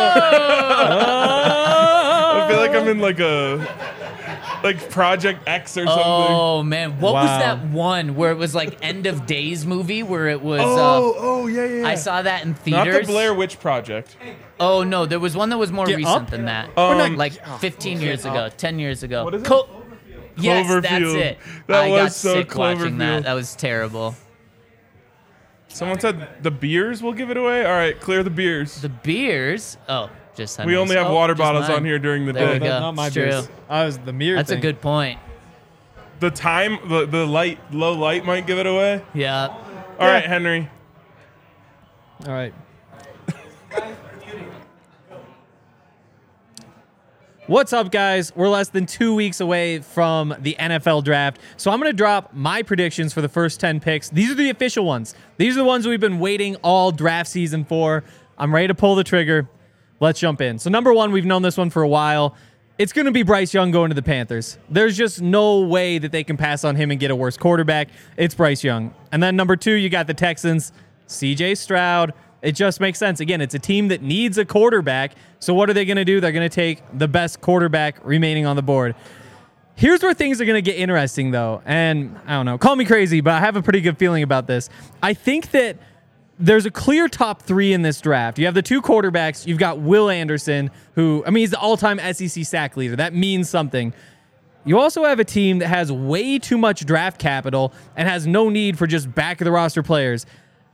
I feel like I'm in like Project X or something. Oh man, what was Wow. that one where it was like end of days movie where it was? Yeah. I saw that in Not theaters. the Blair Witch Project. Oh no, there was one that was more Get recent Up? than that. Um, Like 15 years ago, 10 years ago. What is it? Yes, that's Cloverfield. it. That I was got so sick watching that. Cloverfield. That was terrible. Someone said the beers will give it away. All right, clear the beers. The beers. Oh, just We Henry's. only have Oh, water just bottles mine. on here during the There we day. go. Not my It's beers. true. I was the mirror That's a thing. good point. The time, the light, low light might give it away. Yeah. All right, Henry. All right. What's up, guys? We're less than 2 weeks away from the NFL draft, so I'm going to drop my predictions for the first 10 picks. These are the official ones. These are the ones we've been waiting all draft season for. I'm ready to pull the trigger. Let's jump in. So number one, we've known this one for a while. It's going to be Bryce Young going to the Panthers. There's just no way that they can pass on him and get a worse quarterback. It's Bryce Young. And then number two, you got the Texans, CJ Stroud. It just makes sense. Again, it's a team that needs a quarterback. So what are they going to do? They're going to take the best quarterback remaining on the board. Here's where things are going to get interesting, though. And I don't know, call me crazy, but I have a pretty good feeling about this. I think that there's a clear top three in this draft. You have the two quarterbacks. You've got Will Anderson, who, he's the all-time SEC sack leader. That means something. You also have a team that has way too much draft capital and has no need for just back-of-the-roster players.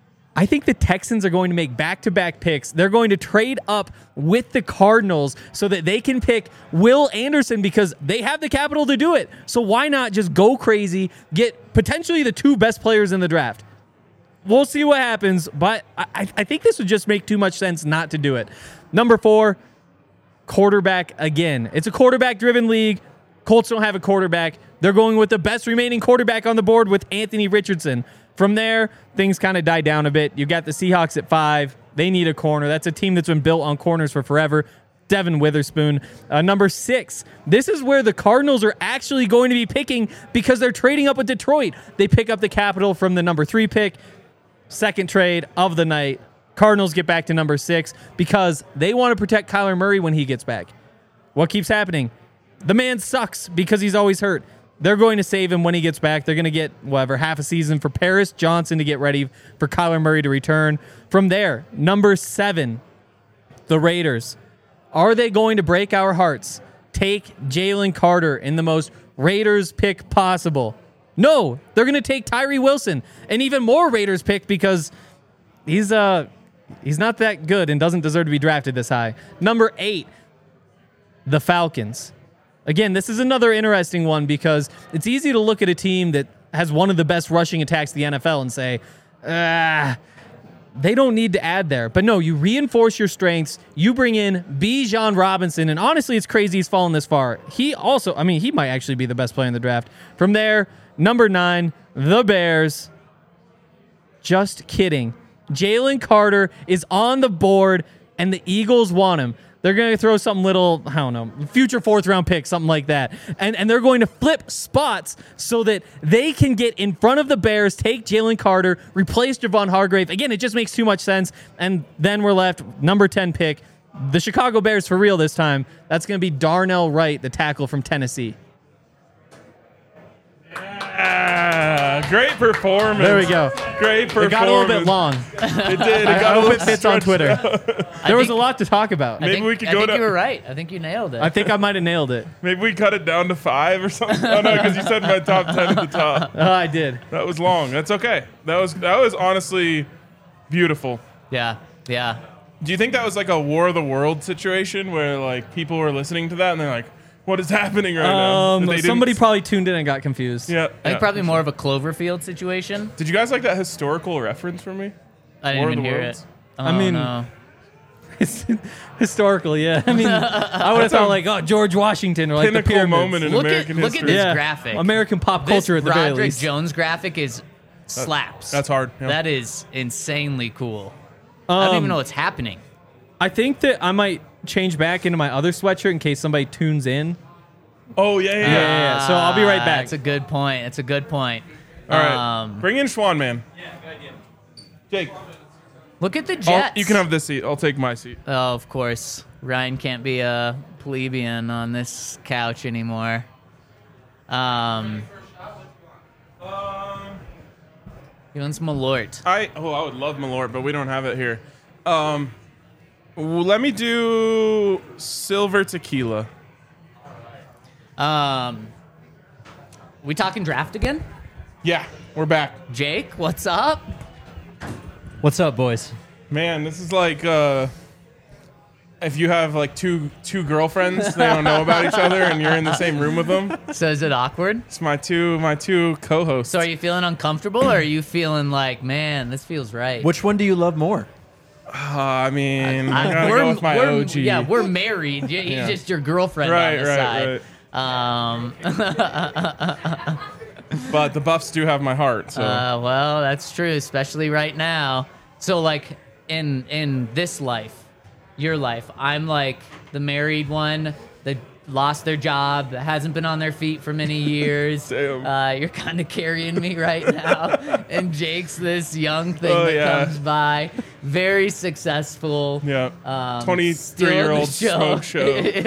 I think the Texans are going to make back-to-back picks. They're going to trade up with the Cardinals so that they can pick Will Anderson because they have the capital to do it. So why not just go crazy, get potentially the two best players in the draft? We'll see what happens, but I think this would just make too much sense not to do it. Number four, quarterback again. It's a quarterback-driven league. Colts don't have a quarterback. They're going with the best remaining quarterback on the board with Anthony Richardson. From there, things kind of die down a bit. You got the Seahawks at 5. They need a corner. That's a team that's been built on corners for forever. Devin Witherspoon. Number 6, this is where the Cardinals are actually going to be picking because they're trading up with Detroit. They pick up the capital from the number 3 pick. Second trade of the night. Cardinals get back to number 6 because they want to protect Kyler Murray when he gets back. What keeps happening? The man sucks because he's always hurt. They're going to save him when he gets back. They're going to get, half a season for Paris Johnson to get ready for Kyler Murray to return. From there, number 7, the Raiders. Are they going to break our hearts? Take Jalen Carter in the most Raiders pick possible. No, they're going to take Tyree Wilson, an even more Raiders pick because he's not that good and doesn't deserve to be drafted this high. Number 8, the Falcons. Again, this is another interesting one because it's easy to look at a team that has one of the best rushing attacks in the NFL and say, they don't need to add there. But no, you reinforce your strengths. You bring in Bijan Robinson, and honestly, it's crazy he's fallen this far. He also, he might actually be the best player in the draft. From there, number 9, the Bears. Just kidding. Jalen Carter is on the board, and the Eagles want him. They're going to throw something little, future 4th-round pick, something like that. And they're going to flip spots so that they can get in front of the Bears, take Jalen Carter, replace Javon Hargrave. Again, it just makes too much sense. And then we're left, number 10 pick, the Chicago Bears for real this time. That's going to be Darnell Wright, the tackle from Tennessee. Great performance. There we go. Great performance. It got a little bit long. It did. I hope it fits on Twitter. There was a lot to talk about. Maybe we could go to. You were right. I think you nailed it. I think I might have nailed it. Maybe we cut it down to 5 or something. Oh no, because you said my top 10 at the top. I did. That was long. That's okay. That was honestly beautiful. Yeah. Do you think that was like a War of the World situation where like people were listening to that and they're like, what is happening right now? Somebody probably tuned in and got confused. Yeah. I think probably more of a Cloverfield situation. Did you guys like that historical reference from me? I didn't even hear it. Oh, no. Historical, yeah. I would have thought like, George Washington or like the pinnacle pyramids. moment in American history. Look at this graphic. American pop culture at the very Roderick least. Jones graphic is slaps. That's hard. Yeah. That is insanely cool. I don't even know what's happening. I think that I might change back into my other sweatshirt in case somebody tunes in. Oh, yeah. So I'll be right back. That's a good point. All right. Bring in Schwan, man. Yeah, good idea. Jake. Look at the Jets. You can have this seat. I'll take my seat. Oh, of course. Ryan can't be a plebeian on this couch anymore. He wants Malort. I would love Malort, but we don't have it here. Let me do silver tequila. We talking draft again? Yeah, we're back. Jake, what's up? What's up, boys? Man, this is like if you have like two girlfriends, they don't know about each other, and you're in the same room with them. So is it awkward? It's my two co-hosts. So are you feeling uncomfortable, or are you feeling like, man, this feels right? Which one do you love more? I mean, I gotta go with my OG. Yeah, we're married. He's just your girlfriend on the side. But the Buffs do have my heart. So. Well, that's true, especially right now. So, like, in this life, your life, I'm like the married one that lost their job, that hasn't been on their feet for many years. You're kind of carrying me right now. And Jake's this young thing comes by, very successful. Yeah. 23-year-old smoke show.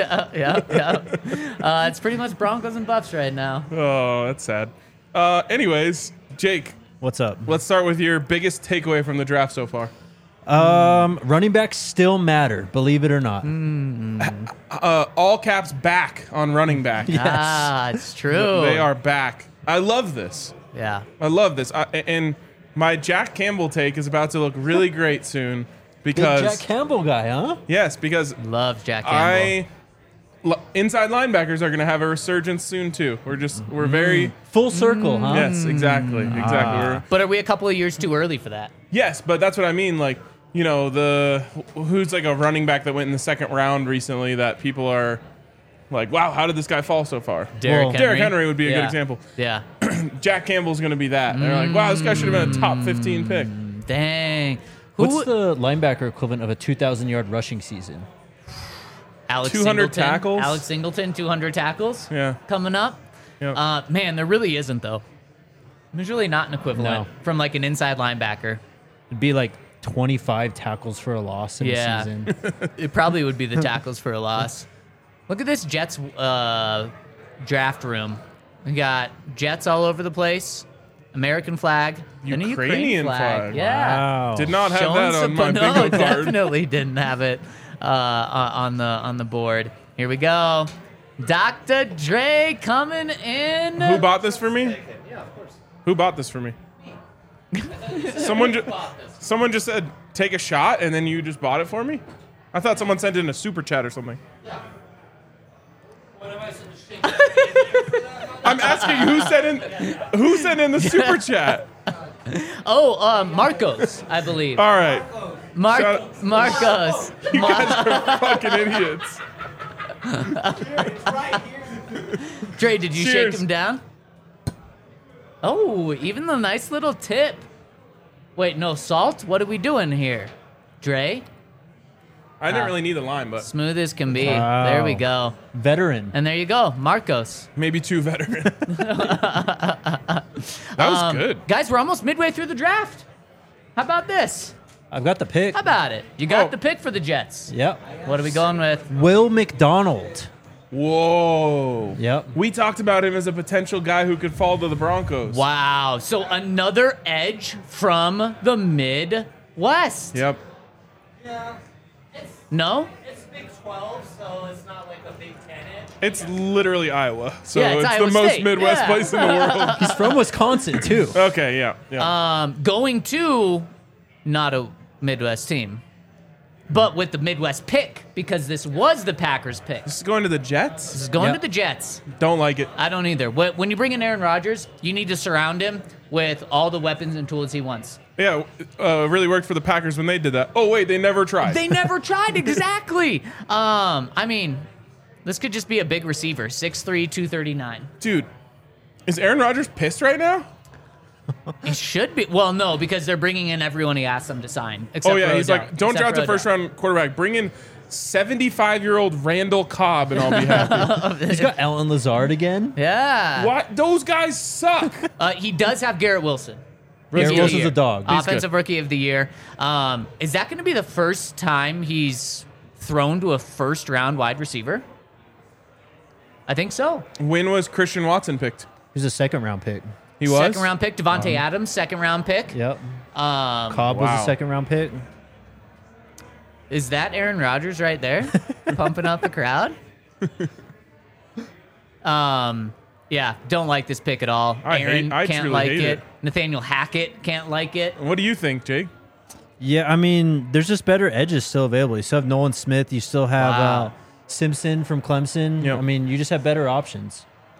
It's pretty much Broncos and Buffs right now. Oh, that's sad. Anyways, Jake. What's up? Let's start with your biggest takeaway from the draft so far. Running backs still matter, believe it or not. All caps back on running back. Yes. It's true. They are back. I love this. Yeah. I love this. And my Jack Campbell take is about to look really great soon because Big Jack Campbell guy, huh? Yes, because love Jack Campbell. Inside linebackers are going to have a resurgence soon too. We're very full circle, huh? Yes, exactly. But are we a couple of years too early for that? Yes, but that's what I mean. Like, you know, who's like a running back that went in the second round recently that people are like, wow, how did this guy fall so far? Derrick Henry would be a good example. Yeah. Jack Campbell's going to be that. They're like, wow, this guy should have been a top 15 pick. Dang. What's the linebacker equivalent of a 2,000-yard rushing season? Alex 200 Singleton. tackles? Alex Singleton, 200 tackles. Yeah. Coming up. Yep. Man, there really isn't, though. There's really not an equivalent from like an inside linebacker. It'd be like 25 tackles for a loss in a season. It probably would be the tackles for a loss. Look at this Jets draft room. We got Jets all over the place. American flag. And a Ukrainian flag. Yeah. Wow. Did not have that on my bingo card. Definitely didn't have it on the board. Here we go. Dr. Dre coming in. Who bought this for me? Yeah, of course. Who bought this for me? Someone just said, take a shot, and then you just bought it for me? I thought someone sent in a super chat or something. Yeah. What am I supposed to say? I'm asking who sent in the super chat? Marcos, I believe. All right. Marcos. You guys are fucking idiots. Dre, did you Cheers. shake him down? Oh, even the nice little tip. Wait, no salt? What are we doing here? Dre? I didn't really need the lime, but Smooth as can be. Wow. There we go. Veteran. And there you go, Marcos. maybe too veteran. That was good. Guys, we're almost midway through the draft. How about this? I've got the pick. How about it? You got Oh. the pick for the Jets. Yep. What are we going with? Will McDonald. Whoa. Yep. We talked about him as a potential guy who could fall to the Broncos. Wow. So another edge from the Midwest. Yep. Yeah. No? It's Big 12, so it's not like a Big 10 edge. It's literally Iowa. So Yeah, it's it's Iowa the most State. Midwest Yeah. place in the world. He's from Wisconsin, too. Okay, yeah. Going to not a Midwest team, but with the Midwest pick, because this was the Packers pick. This is going to the Jets? This is going Yep. to the Jets. Don't like it. I don't either. When you bring in Aaron Rodgers, you need to surround him with all the weapons and tools he wants. Yeah, really worked for the Packers when they did that. Oh, wait, they never tried. They never tried, exactly. I mean, this could just be a big receiver, 6'3", 239. Dude, is Aaron Rodgers pissed right now? He should be. Well, no, because they're bringing in everyone he asked them to sign. Except Oh, yeah, for he's Odell. like, don't Except draft for a first-round quarterback. Bring in 75-year-old Randall Cobb, and I'll be happy. He's got Alan Lazard again. Yeah. What? Those guys suck. He does have Garrett Wilson. Garrett Rookie of the Wilson's year. a dog. He's Offensive Rookie of the Year. Is that going to be the first time he's thrown to a first-round wide receiver? I think so. When was Christian Watson picked? He's a second-round pick. He was? Second-round pick. Devontae Adams, second-round pick. Yep. Cobb was Wow. a second-round pick. Is that Aaron Rodgers right there, pumping up the crowd? Yeah, don't like this pick at all. I Aaron can't truly like hate it. it. Nathaniel Hackett can't like it. What do you think, Jake? Yeah, I mean, there's just better edges still available. You still have Nolan Smith. You still have Wow. Simpson from Clemson. Yep. I mean, you just have better options.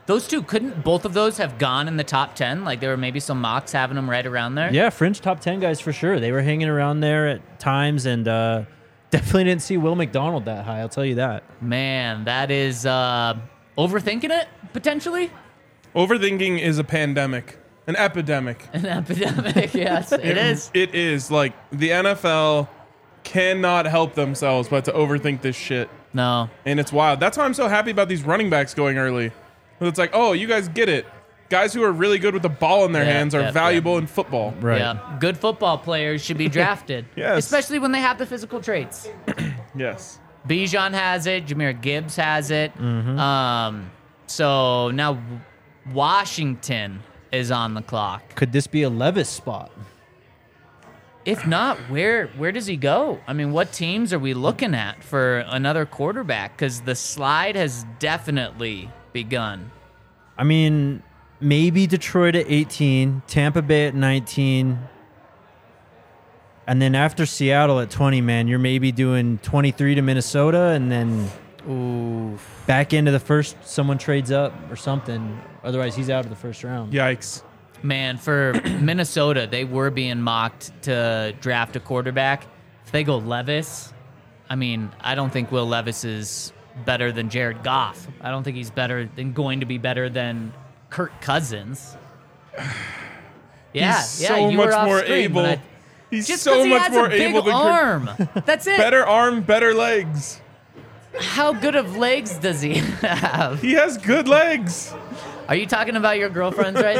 Those two, couldn't both of those have gone in the top 10? Like, there were maybe some mocks having them right around there? Yeah, fringe top 10 guys for sure. They were hanging around there at times, and definitely didn't see Will McDonald that high, I'll tell you that. Man, that is overthinking it, potentially? Overthinking is a pandemic, an epidemic. An epidemic, yes, it is. It is. Like, the NFL cannot help themselves but to overthink this shit. No. And it's wild. That's why I'm so happy about these running backs going early. It's like, oh, you guys get it. Guys who are really good with the ball in their hands are valuable in football. Right. Yeah, good football players should be drafted. Yes. Especially when they have the physical traits. Yes. Bijan has it. Jahmyr Gibbs has it. Mm-hmm. So now Washington is on the clock. Could this be a Levis spot? If not, where does he go? I mean, what teams are we looking at for another quarterback? Because the slide has definitely begun. I mean, maybe Detroit at 18, Tampa Bay at 19, and then after Seattle at 20, man, you're maybe doing 23 to Minnesota, and then back into the first, someone trades up or something. Otherwise, he's out of the first round. Yikes. Man, for Minnesota, they were being mocked to draft a quarterback. If they go Levis, I mean, I don't think Will Levis is better than Jared Goff. I don't think he's going to be better than Kirk Cousins. Yeah, He's so you much were off more screen, able. but He's just so he much has more a big able than arm. That's it. Better arm, better legs. How good of legs does he have? He has good legs. Are you talking about your girlfriends right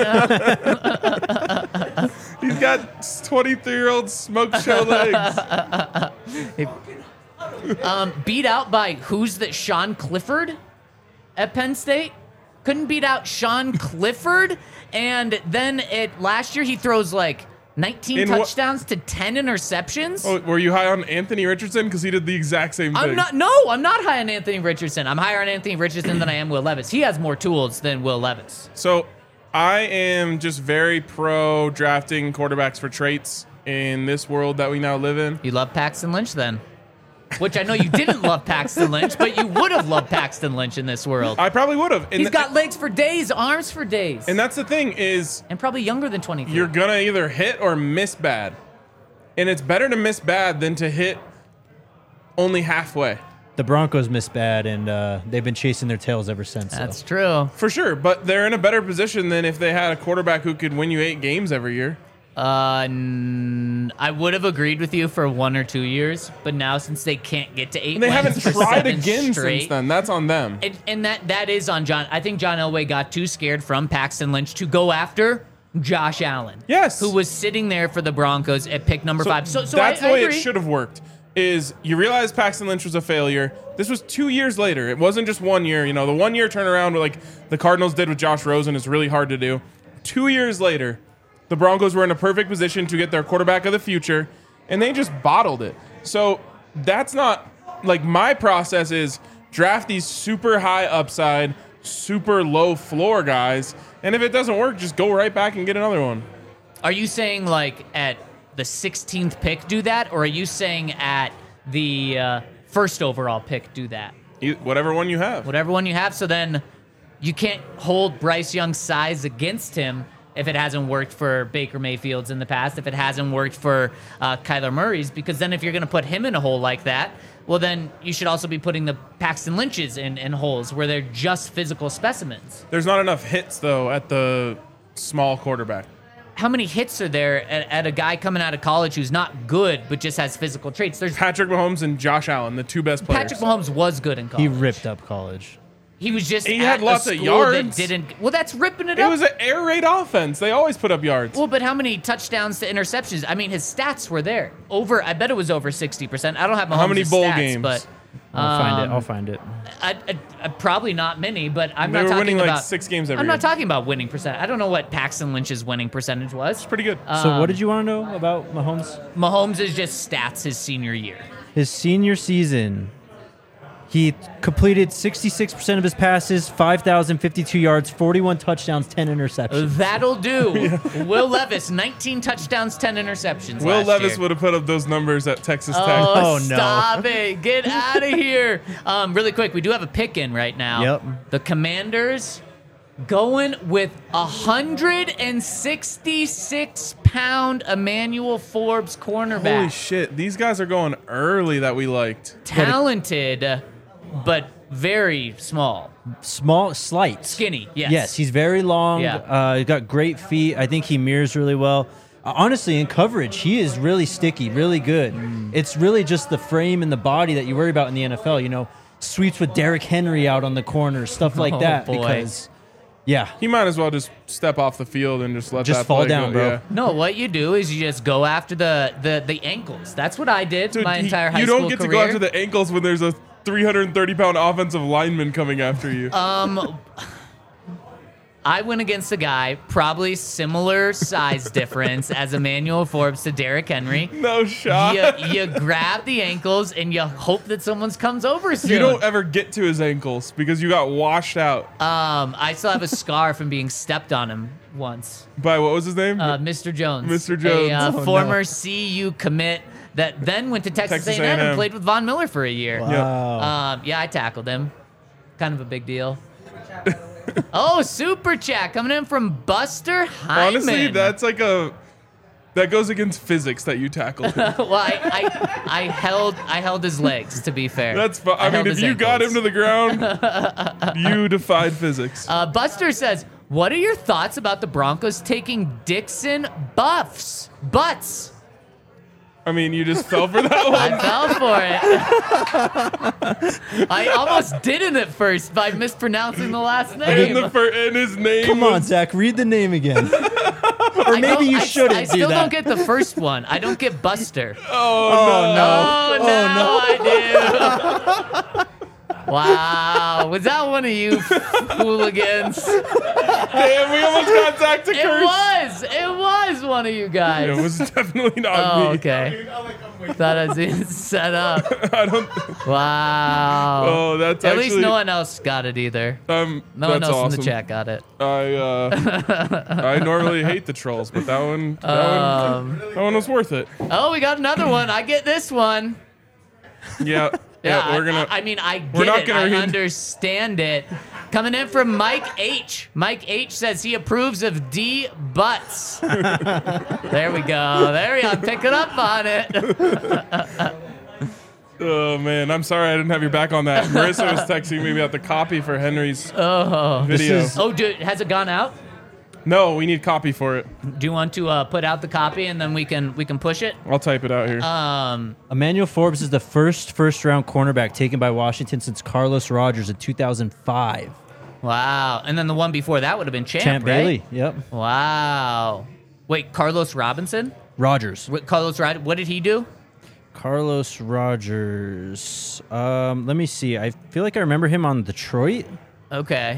now? He's got 23-year-old smoke show legs. Beat out by who's that? Sean Clifford at Penn State? Couldn't beat out Sean Clifford, and then last year he throws like 19 touchdowns to 10 interceptions. Oh, were you high on Anthony Richardson? Because he did the exact same thing. I'm not high on Anthony Richardson. I'm higher on Anthony Richardson than I am Will Levis. He has more tools than Will Levis. So I am just very pro drafting quarterbacks for traits in this world that we now live in. You love Paxton Lynch then? Which I know you didn't love Paxton Lynch, but you would have loved Paxton Lynch in this world. I probably would have. He's got legs for days, arms for days. And that's the thing is... And probably younger than 23. You're going to either hit or miss bad. And it's better to miss bad than to hit only halfway. The Broncos missed bad, and they've been chasing their tails ever since. That's true. For sure, but they're in a better position than if they had a quarterback who could win you 8 games every year. I would have agreed with you for 1 or 2 years, but now since they can't get to 8 And they haven't wins for tried 7 again straight, since then. That's on them. And that is on John. I think John Elway got too scared from Paxton Lynch to go after Josh Allen. Yes. Who was sitting there for the Broncos at pick number 5. So that's the I way agree. it should have worked. Is you realize Paxton Lynch was a failure. This was 2 years later. It wasn't just 1 year. You know, the 1 year turnaround like the Cardinals did with Josh Rosen is really hard to do. 2 years later, the Broncos were in a perfect position to get their quarterback of the future, and they just bottled it. So that's not like my process is draft these super high upside, super low floor guys, and if it doesn't work, just go right back and get another one. Are you saying like at the 16th pick do that, or are you saying at the first overall pick do that? Whatever one you have. Whatever one you have. So then you can't hold Bryce Young's size against him if it hasn't worked for Baker Mayfield's in the past, if it hasn't worked for Kyler Murray's, because then if you're going to put him in a hole like that, well, then you should also be putting the Paxton Lynches in holes where they're just physical specimens. There's not enough hits, though, at the small quarterback. How many hits are there at a guy coming out of college who's not good but just has physical traits? There's Patrick Mahomes and Josh Allen, the 2 best players. Patrick Mahomes was good in college. He ripped up college. He was just He at had lots a of school yards. that didn't. Well, that's ripping it It up. was an air raid offense. They always put up yards. Well, but how many touchdowns to interceptions? I mean, his stats were there. I bet it was over 60%. I don't have Mahomes' How many bowl stats, games? But I'll find it. probably not many. But I'm They not were talking winning like about 6 games every I'm year. not talking about winning percent. I don't know what Paxton Lynch's winning percentage was. Pretty good. So what did you want to know about Mahomes? Mahomes is just stats his senior year. His senior season, he completed 66% of his passes, 5,052 yards, 41 touchdowns, 10 interceptions. That'll do. Will Levis, 19 touchdowns, 10 interceptions. Will last Levis year. would have put up those numbers at Texas Tech. Oh, no. stop it. Get out of here. Really quick, we do have a pick in right now. Yep. The Commanders Going with 166-pound Emmanuel Forbes cornerback. Holy shit. These guys are going early that we liked. Talented, but very small. Slight. Skinny, yes. Yes, he's very long. Yeah. He's got great feet. I think he mirrors really well. Honestly, in coverage, he is really sticky, really good. It's really just the frame and the body that you worry about in the NFL. You know, sweeps with Derrick Henry out on the corner, stuff like that. Boy. Because, yeah. He might as well just step off the field and just let that fall play down, go. bro. Yeah. No, what you do is you just go after the ankles. That's what I did Dude, my entire high you school don't get career. to go after the ankles when there's a 330-pound offensive lineman coming after you. I went against a guy probably similar size difference as Emmanuel Forbes to Derrick Henry. No shot. You grab the ankles and you hope that someone comes over soon. You don't ever get to his ankles because you got washed out. I still have a scar from being stepped on him once. By what was his name? Mr. Jones. Mr. Jones. A Oh, former CU commit that then went to Texas A&M and A&M. played with Von Miller for a year. Wow. Yeah, I tackled him. Kind of a big deal. Oh, super chat coming in from Buster Hyman. Honestly, that's like that goes against physics that you tackled him. Well, I held his legs. To be fair, That's fine. I mean, if you got him to the ground, you defied physics. Buster says, "What are your thoughts about the Broncos taking Dixon butts?" I mean, you just fell for that I one. fell for it. I almost didn't at first by mispronouncing the last name. And his name Come on, was- Zach, read the name again. Or I maybe don't- you shouldn't I do still that. don't get the first one. I don't get Buster. Oh, Oh, now I do. Wow. Was that one of you hooligans? Damn, we almost got Zach to curse. It was one of you guys. It was definitely not Oh, me. okay. Thought I was set up. I don't. Wow. Oh, that's At actually. least no one else got it either. No one that's else awesome. in the chat got it. I normally hate the trolls, but that one was worth it. Oh, we got another one. I get this one. Yeah. Yeah, we're gonna. I mean, I we're get not it. gonna I read- understand it. Coming in from Mike H. Mike H says he approves of D butts. There we go. I'm picking up on it. Oh man, I'm sorry I didn't have your back on that. Marissa was texting me about the copy for Henry's video. Oh, dude, has it gone out? No, we need copy for it. Do you want to put out the copy and then we can push it? I'll type it out here. Emmanuel Forbes is the first-round cornerback taken by Washington since Carlos Rogers in 2005. Wow. And then the one before that would have been Champ, right? Bailey, yep. Wow. Wait, Carlos Robinson? Rogers. What did he do? Carlos Rogers. Let me see. I feel like I remember him on Detroit. Okay.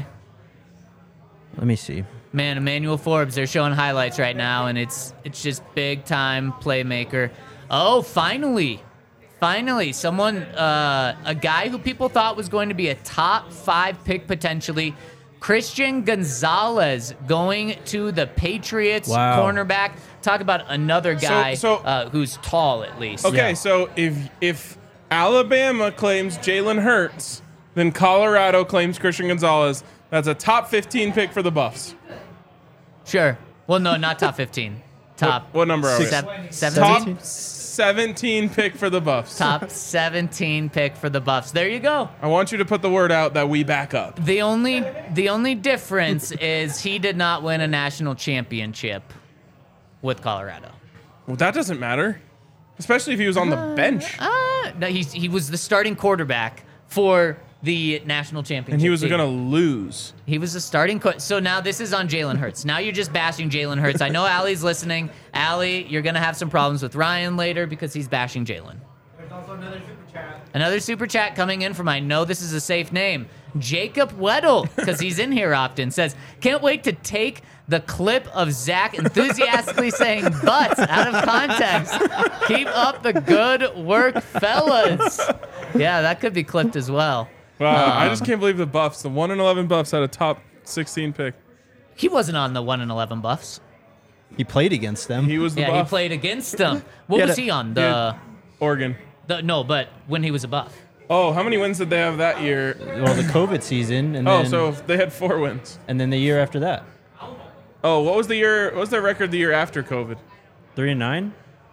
Let me see. Man, Emmanuel Forbes, they're showing highlights right now, and it's just big-time playmaker. Oh, finally, someone, a guy who people thought was going to be a top 5 pick potentially, Christian Gonzalez going to the Patriots cornerback. Talk about another guy who's tall at least. Okay, so if Alabama claims Jalen Hurts, then Colorado claims Christian Gonzalez. That's a top 15 pick for the Buffs. Sure. Well, no, not top 15. Top. What number are we? 17? Top 17 pick for the Buffs. Top 17 pick for the Buffs. There you go. I want you to put the word out that we back up. The only difference is he did not win a national championship with Colorado. Well, that doesn't matter, especially if he was on the bench. No, he was the starting quarterback for the national championship. And he was team. going to lose. He was the starting so now this is on Jalen Hurts. Now you're just bashing Jalen Hurts. I know Allie's listening. Allie, you're going to have some problems with Ryan later because he's bashing Jalen. There's also another super chat. Another super chat coming in from, I know this is a safe name, Jacob Weddle, because he's in here often, says, can't wait to take the clip of Zach enthusiastically saying butts out of context. Keep up the good work, fellas. Yeah, that could be clipped as well. Wow, I just can't believe the Buffs, the 1-11 Buffs had a top 16 pick. He wasn't on the 1-11 Buffs. He played against them. He was the Yeah, Buff. he played against them. What was he on? Oregon. No, but when he was a Buff. Oh, how many wins did they have that year? Well, the COVID season, and Oh, then, so they had 4 wins. and then the year after that, Oh, what was the year? What was their record the year after COVID? 3-9.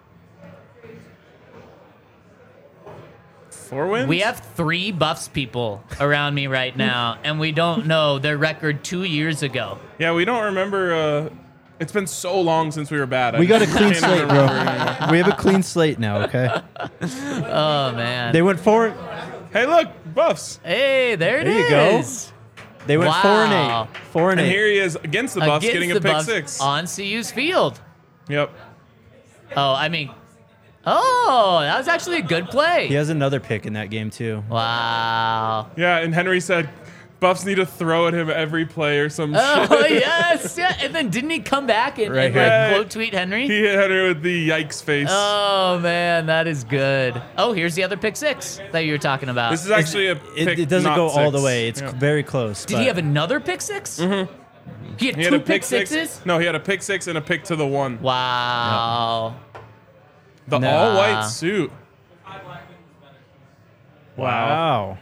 4 wins. We have 3 Buffs people around me right now, and we don't know their record 2 years ago. Yeah, we don't remember. It's been so long since we were bad. We got a clean can't slate, remember bro. anymore. We have a clean slate now. Okay. Oh man. They went 4. Hey, look, Buffs. Hey, there it is. There you go. They went Wow. 4-8. 4-8. And here he is against the Buffs, Against getting the a pick Buffs 6. on CU's field. Yep. Oh, I mean, oh, that was actually a good play. He has another pick in that game too. Wow. Yeah, and Henry said, Buffs need to throw at him every play or some Oh shit. yes, yeah. And then didn't he come back and, Right and here. like quote tweet Henry? He hit Henry with the yikes face. Oh man, that is good. Oh, here's the other pick 6 that you were talking about. This is actually a pick. It doesn't not go all 6. the way. It's Yeah. very close. Did he have another pick 6? Mm-hmm. He had He 2 had a pick pick 6. 6s? No, he had a pick 6 and a pick to the 1. Wow. The Nah. all-white suit. Wow.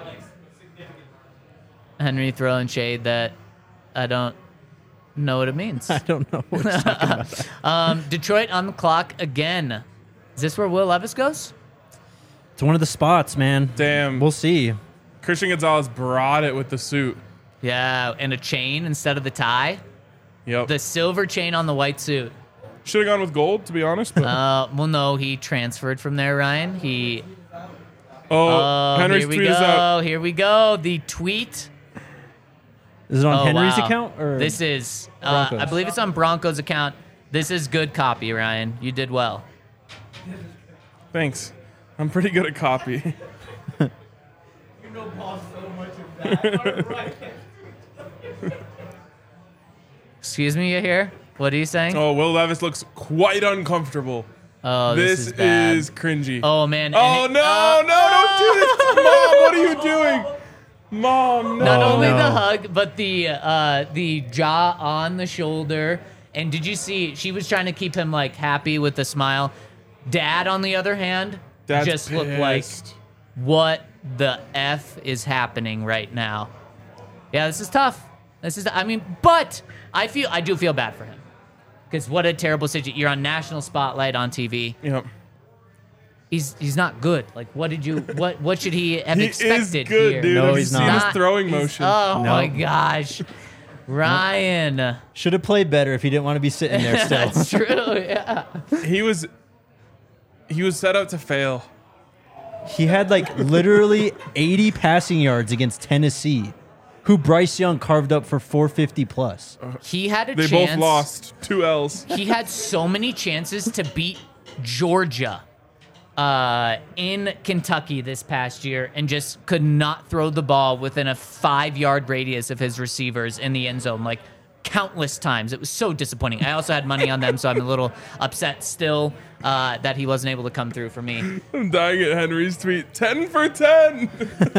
Henry throwing shade that I don't know what it means. I don't know. What you're talking about. Detroit on the clock again. Is this where Will Levis goes? It's one of the spots, man. Damn. We'll see. Christian Gonzalez brought it with the suit. Yeah, and a chain instead of the tie. Yep. The silver chain on the white suit. Should have gone with gold, to be honest. But Well, no, he transferred from there, Ryan. He. Henry's here we tweet go. is out. Here we go. The tweet. Is it on Oh, Henry's wow. account or This is. I Broncos? believe it's on Broncos' account. This is good copy, Ryan. You did well. Thanks. I'm pretty good at copy. Excuse me, you here? What are you saying? Oh, Will Levis looks quite uncomfortable. Oh, This is bad. is cringy. Oh man. Oh, and no, don't do this. Mom, what are you doing? Mom, no. Not Oh, only no. the hug, but the jaw on the shoulder. And did you see? She was trying to keep him like happy with a smile. Dad, on the other hand, Dad's just looked like, pissed. what the f is happening right now? Yeah, this is tough. This is. I mean, but I do feel bad for him because what a terrible situation. You're on national spotlight on TV. Yep. He's not good. Like, what should he have He expected is good, here? dude. No, Have you he's seen not. his throwing He's- motion? Oh No. my gosh, Ryan. should have played better if he didn't want to be sitting there still. That's true. Yeah. He was set up to fail. He had like literally 80 passing yards against Tennessee, who Bryce Young carved up for 450 plus. He had a They chance. both lost 2 L's. He had so many chances to beat Georgia in Kentucky this past year and just could not throw the ball within a 5-yard radius of his receivers in the end zone, like countless times. It was so disappointing. I also had money on them, so I'm a little upset still that he wasn't able to come through for me. I'm dying at Henry's tweet. 10 for 10.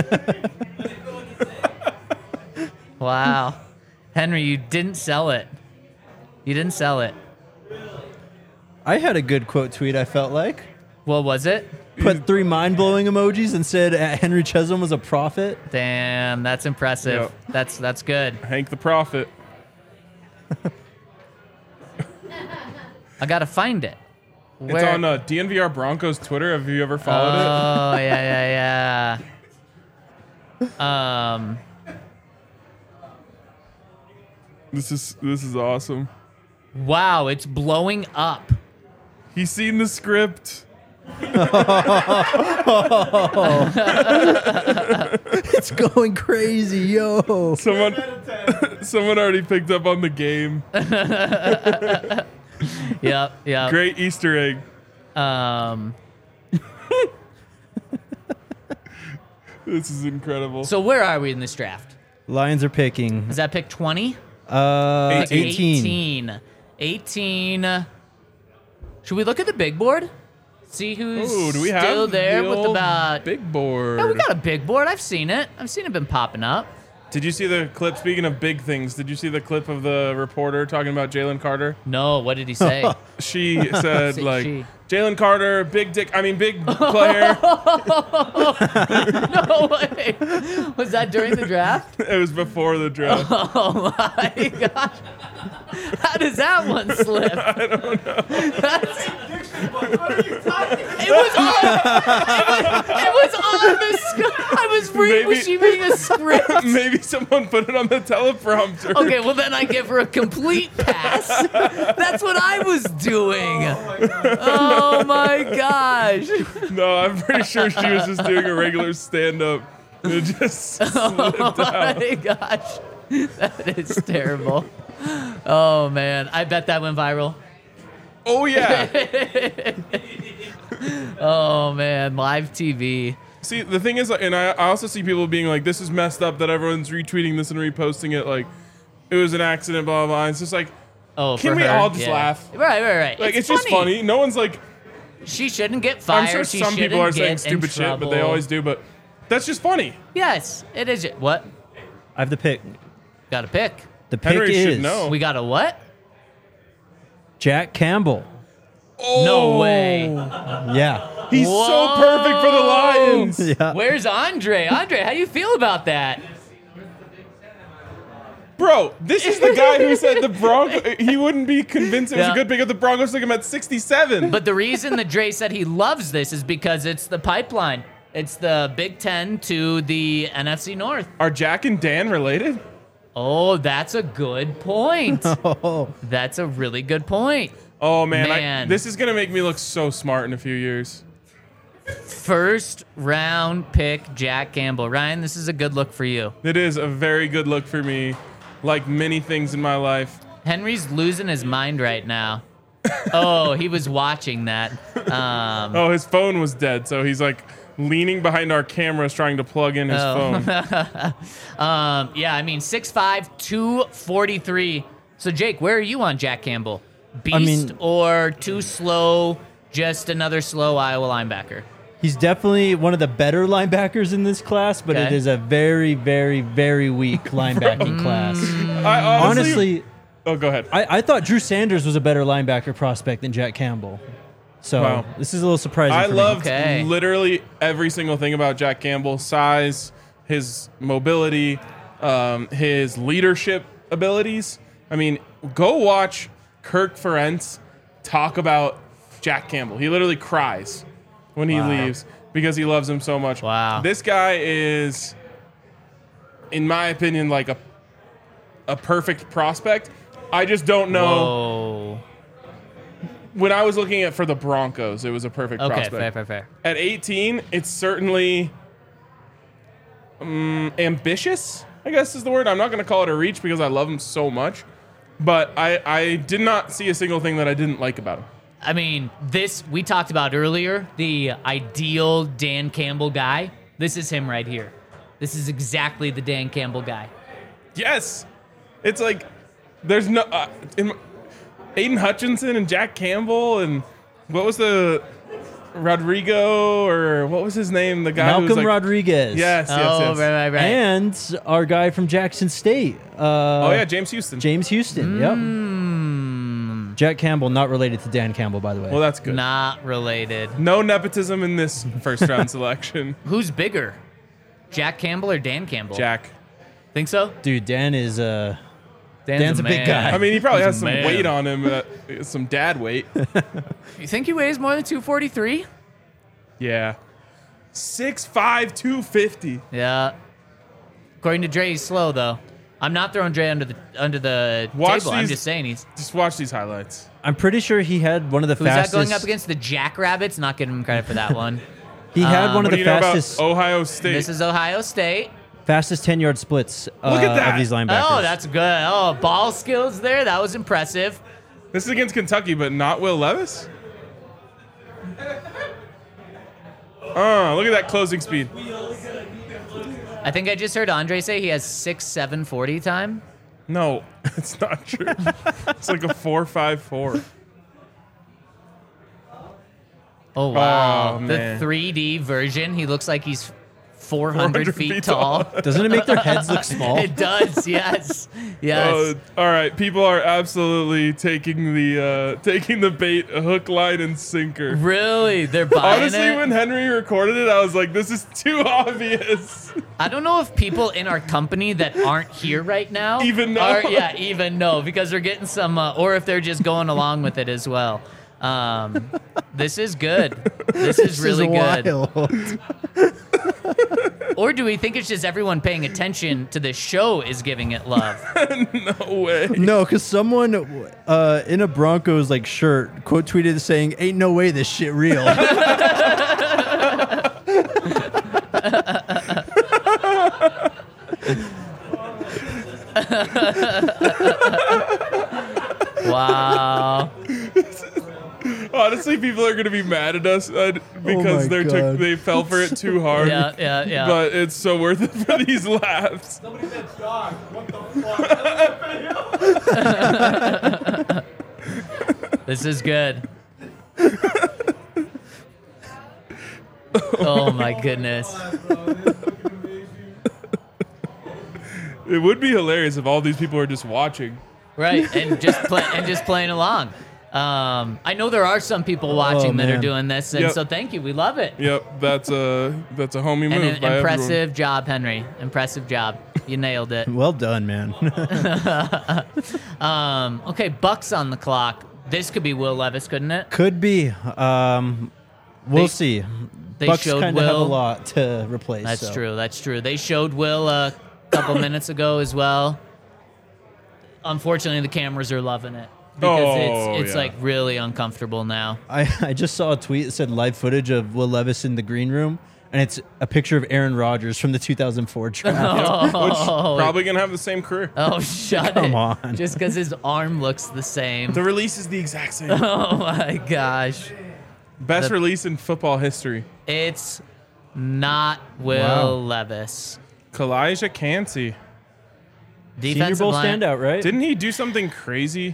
Wow. Henry, you didn't sell it. You didn't sell it. I had a good quote tweet, I felt like. What was it? Put 3 mind-blowing emojis and said Henry Chesholm was a prophet. Damn, that's impressive. Yep. That's good. Hank the Prophet. I gotta find it. It's on DNVR Broncos Twitter. Have you ever followed it? Oh yeah. This is awesome. Wow, it's blowing up. He's seen the script. It's going crazy, yo. Someone already picked up on the game. Yep. Great Easter egg. This is incredible. So where are we in this draft? Lions are picking. Is that pick 20? 18. 18. Should we look at the big board? See who's Ooh, do we still have there the with old about... big board? Yeah, we got a big board. I've seen it been popping up. Did you see the clip? Speaking of big things, did you see the clip of the reporter talking about Jalen Carter? No, what did he say? She said, Say like, she. Jalen Carter, big player. No way. Was that during the draft? It was before the draft. Oh my gosh. How does that one slip? I don't know. It was on the script. Was she reading a script? Maybe someone put it on the teleprompter. Okay, well then I give her a complete pass. That's what I was doing. Oh my gosh. No, I'm pretty sure she was just doing a regular stand-up. It just slipped out. My gosh. That is terrible. Oh man, I bet that went viral. Oh, yeah. Oh man, live TV. See, the thing is, and I also see people being like, this is messed up that everyone's retweeting this and reposting it like it was an accident, blah, blah, blah. It's just like, Oh, can for we her, all just yeah. laugh? Right. Like, it's just funny. No one's like, She shouldn't get fired. I'm sure She some people are saying shouldn't get in stupid shit, but they trouble. always do, but that's just funny. Yes, it is. What? I have the pick. Got a pick. The pick Henry is should know. We got a what? Jack Campbell. Oh, No way. Yeah. He's so perfect for the Lions. Yeah. Where's Andre? Andre, how do you feel about that? Bro, this is the guy who said the Broncos, he wouldn't be convinced it was Yeah. a good pick if the Broncos took him at 67. But the reason that Dre said he loves this is because it's the pipeline. It's the Big Ten to the NFC North. Are Jack and Dan related? Oh, that's a good point. That's a really good point. Oh, man. Man. This is going to make me look so smart in a few years. First round pick, Jack Campbell. Ryan, this is a good look for you. It is a very good look for me, like many things in my life. Henry's losing his mind right now. Oh, he was watching that. Oh, his phone was dead, so he's like leaning behind our cameras trying to plug in his phone. Yeah, I mean, 6'5", 243. So, Jake, where are you on Jack Campbell? Beast or too slow, just another slow Iowa linebacker? He's definitely one of the better linebackers in this class, but it Okay. is a very, very, very weak linebacking class. I Honestly, oh, go ahead. I thought Drew Sanders was a better linebacker prospect than Jack Campbell. So Wow. this is a little surprising I for me. loved Okay. literally every single thing about Jack Campbell: size, his mobility, his leadership abilities. I mean, go watch Kirk Ferentz talk about Jack Campbell. He literally cries when he leaves because he loves him so much. Wow. This guy is, in my opinion, like a perfect prospect. I just don't know. Whoa. When I was looking at for the Broncos, it was a perfect Okay, prospect. fair. At 18, it's certainly ambitious, I guess is the word. I'm not going to call it a reach because I love him so much. But I did not see a single thing that I didn't like about him. I mean, this we talked about earlier, the ideal Dan Campbell guy. This is him right here. This is exactly the Dan Campbell guy. Yes. It's like there's no Aiden Hutchinson and Jack Campbell and what was the Rodrigo or what was his name? The guy who was Malcolm like, Rodriguez. Yes. Right. And our guy from Jackson State. Oh yeah, James Houston. James Houston. Yep. Jack Campbell, not related to Dan Campbell, by the way. Well, that's good. Not related. No nepotism in this first round selection. Who's bigger? Jack Campbell or Dan Campbell? Jack. Think so? Dude, Dan is Dan's a man. big guy. I mean, he probably He's has a some man. weight on him, some dad weight. You think he weighs more than 243? Yeah. 6'5", 250. Yeah. According to Dre, he's slow though. I'm not throwing Dre under the Watch table. I'm these- just saying he's. Just watch these highlights. I'm pretty sure he had one of the Who's fastest. that going up against? The Jackrabbits? Not giving him credit for that one. He had one What of do the you know fastest, about Ohio State? This is Ohio State. fastest 10-yard splits Look at that. of these linebackers. Oh, that's good. Oh, ball skills there. That was impressive. This is against Kentucky, but not Will Levis? Look at that closing speed. I think I just heard Andre say he has 6'7" 40 time. No, it's not true. It's like a 4.54. Oh wow. Oh, The man. 3D version. He looks like he's 400 feet tall. Doesn't it make their heads look small? It does, yes. Yes. All right, people are absolutely taking the bait, hook, line, and sinker. Really? They're buying Honestly, it? when Henry recorded it, I was like, this is too obvious. I don't know if people in our company that aren't here right now Even know. even know, because they're getting some, or if they're just going along with it as well. This is good. This is really good. Wild. Or do we think it's just everyone paying attention to this show is giving it love? No way. No, because someone in a Broncos like shirt quote tweeted saying, "Ain't no way this shit real." Wow. Honestly, people are gonna be mad at us because my God. they fell for it too hard. Yeah. But it's so worth it for these laughs. Somebody said dog. What the fuck? This is good. Oh my goodness. It would be hilarious if all these people are just watching. Right, and just playing along. I know there are some people watching that are man. doing this, and Yep. so thank you. We love it. Yep, that's a homie move. And an by impressive everyone. job, Henry. Impressive job. You nailed it. Well done, man. Okay, Bucks on the clock. This could be Will Levis, couldn't it? Could be. We'll They- see. they Bucks showed kind of have a Will. lot to replace. That's so. true. That's true. They showed Will a couple minutes ago as well. Unfortunately, the cameras are loving it because it's yeah. like really uncomfortable now. I just saw a tweet that said live footage of Will Levis in the green room, and it's a picture of Aaron Rodgers from the 2004 draft. Which probably gonna have the same career. Oh, shut Come it. on. Just because his arm looks the same. The release is the exact same. Oh, my gosh. Best release in football history. It's not Will Wow. Levis. Kalijah Cansey. Senior Defensive Bowl line. standout, right? Didn't he do something crazy?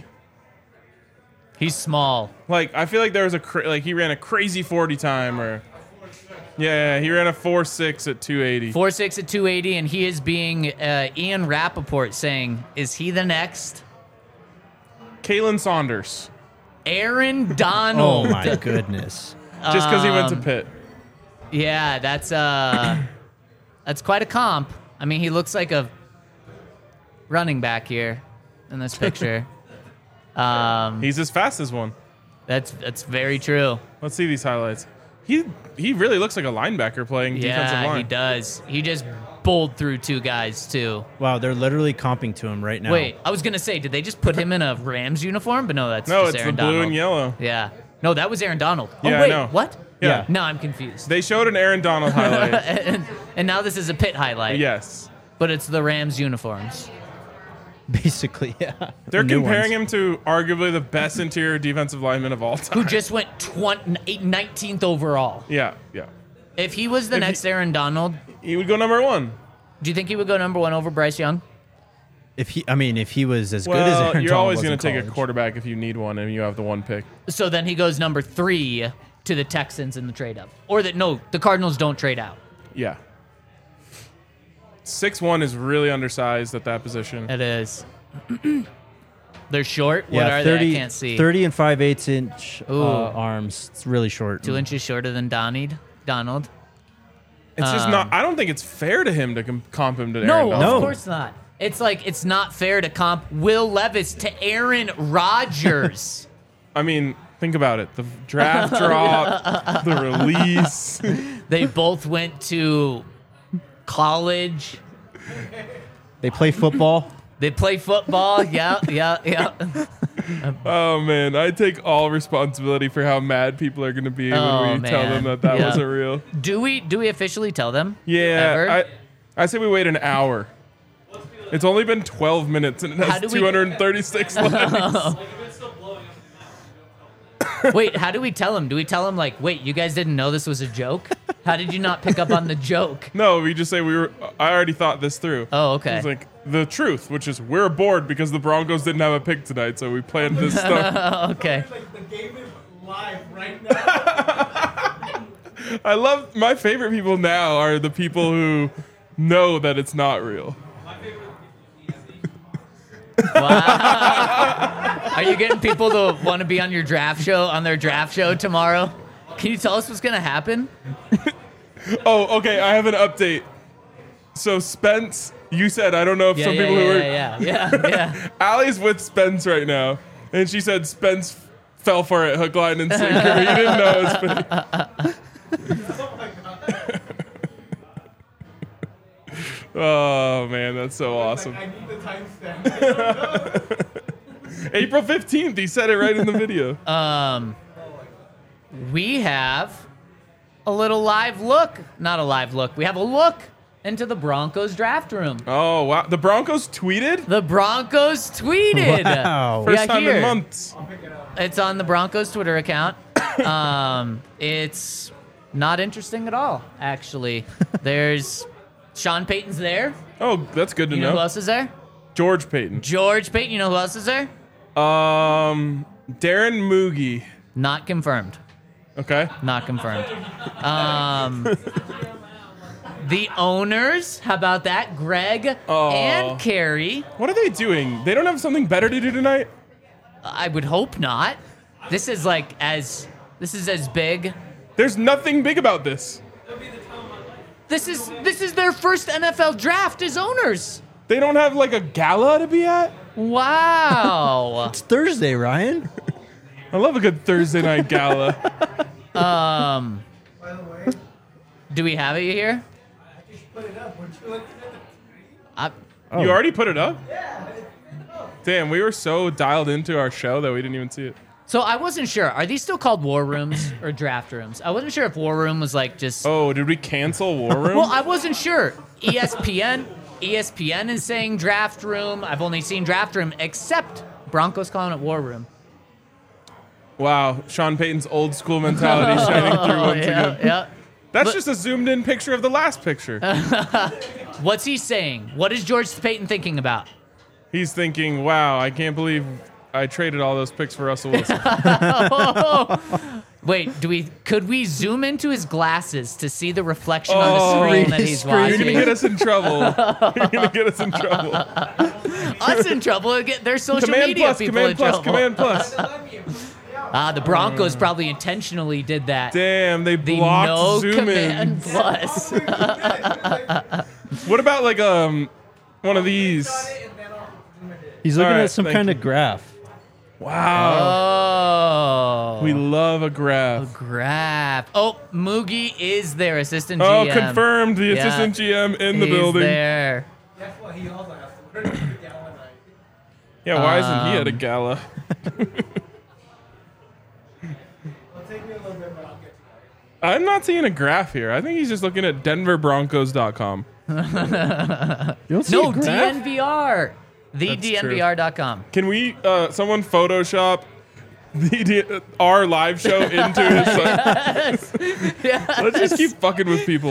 He's small. Like I feel like there was he ran a crazy 40 time or yeah, he ran a 4.6 at 280. 4'6" at 280, and he is being Ian Rappaport saying, is he the next? Kalen Saunders. Aaron Donald. Oh my goodness. Just because he went to Pitt. Yeah, that's quite a comp. I mean, he looks like a running back here in this picture. He's as fast as one. That's very true. Let's see these highlights. He really looks like a linebacker playing defensive Yeah, line. he does. He just bowled through two guys too. Wow, they're literally comping to him right now. Wait, I was gonna say, did they just put him in a Rams uniform? But no, that's No, just it's Aaron the blue Donald. and yellow. Yeah. No, that was Aaron Donald. Yeah, oh I wait, know. what? Yeah. No, I'm confused. They showed an Aaron Donald highlight. and now this is a pit highlight. Yes. But it's the Rams uniforms. Basically, yeah. They're New comparing ones. him to arguably the best interior defensive lineman of all time. Who just went 19th overall. Yeah. If he was the If next Aaron Donald, He would go number 1. do you think he would go number 1 over Bryce Young? If he was as good as Well, Aaron you're Donald always was going in to take a college. quarterback if you need one and you have the 1 pick. So then he goes number 3 to the Texans in the trade up. Or the Cardinals don't trade out. Yeah. 6'1" is really undersized at that position. It is. They're short. Yeah, What are 30, they? I can't see. 30 and 5/8 inch Ooh. arms. It's really short. 2 inches shorter than Donald. It's just not. I don't think it's fair to him to comp him to Aaron No, Donald. of course not. It's like it's not fair to comp Will Levis to Aaron Rodgers. I mean, think about it. The draft drop, the release. They both went to college. They play football. They play football. Yeah. Oh man, I take all responsibility for how mad people are going to be when we tell them that Yeah. wasn't real. Do we officially tell them? Yeah, Ever? I say we wait an hour. It's only been 12 minutes and it How has do we- 236 likes. Wait, how do we tell them? Do we tell them like, wait, you guys didn't know this was a joke? How did you not pick up on the joke? No, we just say I already thought this through. Oh, okay. It's like the truth, which is we're bored because the Broncos didn't have a pick tonight, so we planned this stuff. Okay. Like the game is live right now. I love my favorite people now are the people who know that it's not real. Wow. Are you getting people to want to be on your draft show, on their draft show tomorrow? Can you tell us what's going to happen? Oh, okay. I have an update. So Spence, you said, I don't know if some people who are... Yeah. Allie's with Spence right now. And she said Spence fell for it, hook, line, and sinker. You didn't know it was Oh, man, that's so awesome. I need the timestamp. April 15th, he said it right in the video. We have a little live look. Not a live look. We have a look into the Broncos draft room. Oh, wow. The Broncos tweeted? The Broncos tweeted. Wow. First time in months. It's on the Broncos Twitter account. It's not interesting at all, actually. There's Sean Payton's there. Oh, that's good to You know who else is there? George Payton. George Payton. You know who else is there? Darren Moogie. Not confirmed. Okay. Not confirmed. The owners, how about that? Greg and Carrie. What are they doing? They don't have something better to do tonight? I would hope not. This is as big. There's nothing big about this. This is their first NFL draft as owners. They don't have like a gala to be at? Wow. It's Thursday, Ryan. I love a good Thursday night gala. By the way, Do we have it here? I just put it up. Weren't you looking at the You already put it up? Yeah. Damn, we were so dialed into our show that we didn't even see it. So I wasn't sure. Are these still called war rooms or draft rooms? I wasn't sure if war room was like just. Oh, did we cancel War Room? Well, I wasn't sure. ESPN is saying draft room. I've only seen draft room, except Broncos calling it war room. Wow, Sean Payton's old school mentality shining through once again. Yeah. That's just a zoomed in picture of the last picture. What's he saying? What is George Payton thinking about? He's thinking, wow, I can't believe I traded all those picks for Russell Wilson. Wait, could we zoom into his glasses to see the reflection on the screen that he's watching? You're going to get us in trouble. You're going to get us in trouble. Us in trouble? Get their social media people in trouble. Command plus. The Broncos probably intentionally did that. Damn, they The blocked no zoom command in. plus. What about like one of these? He's looking All right, at some thank kind you. of graph. Wow. Oh. We love a graph. Graph. Oh, Moogie is their assistant Oh, GM. confirmed. The Yeah. assistant GM in the He's building. there. Guess what? He also asked. Where did you get one night? Yeah, why isn't he at a gala? It'll take me a little bit, but I'll get to that. I'm not seeing a graph here. I think he's just looking at denverbroncos.com. You don't see No, a graph? DNVR. That's TheDNVR.com. Can we, someone Photoshop our live show into his site? Let's just keep fucking with people.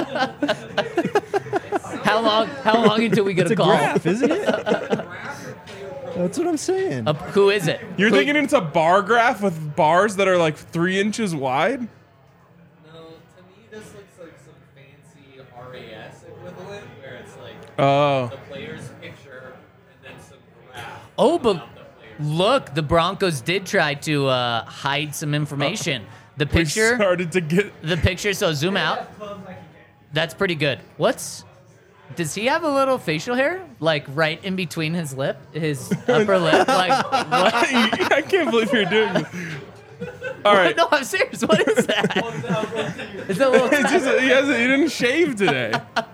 How long until we get It's a a call? graph, isn't it? That's what I'm saying. Who is it? You're Who- thinking it's a bar graph with bars that are like 3 inches wide? No, to me this looks like some fancy RAS equivalent where it's like Oh. the player's picture and then some graph. Oh, but of the player's. look, the Broncos did try to hide some information. The We picture, started to get... so zoom out. That's pretty good. Does he have a little facial hair? Like right in between his upper lip? Like, what? I can't believe you're doing this. All right. No, I'm serious. What is that? Is that a little It's just, he didn't shave today.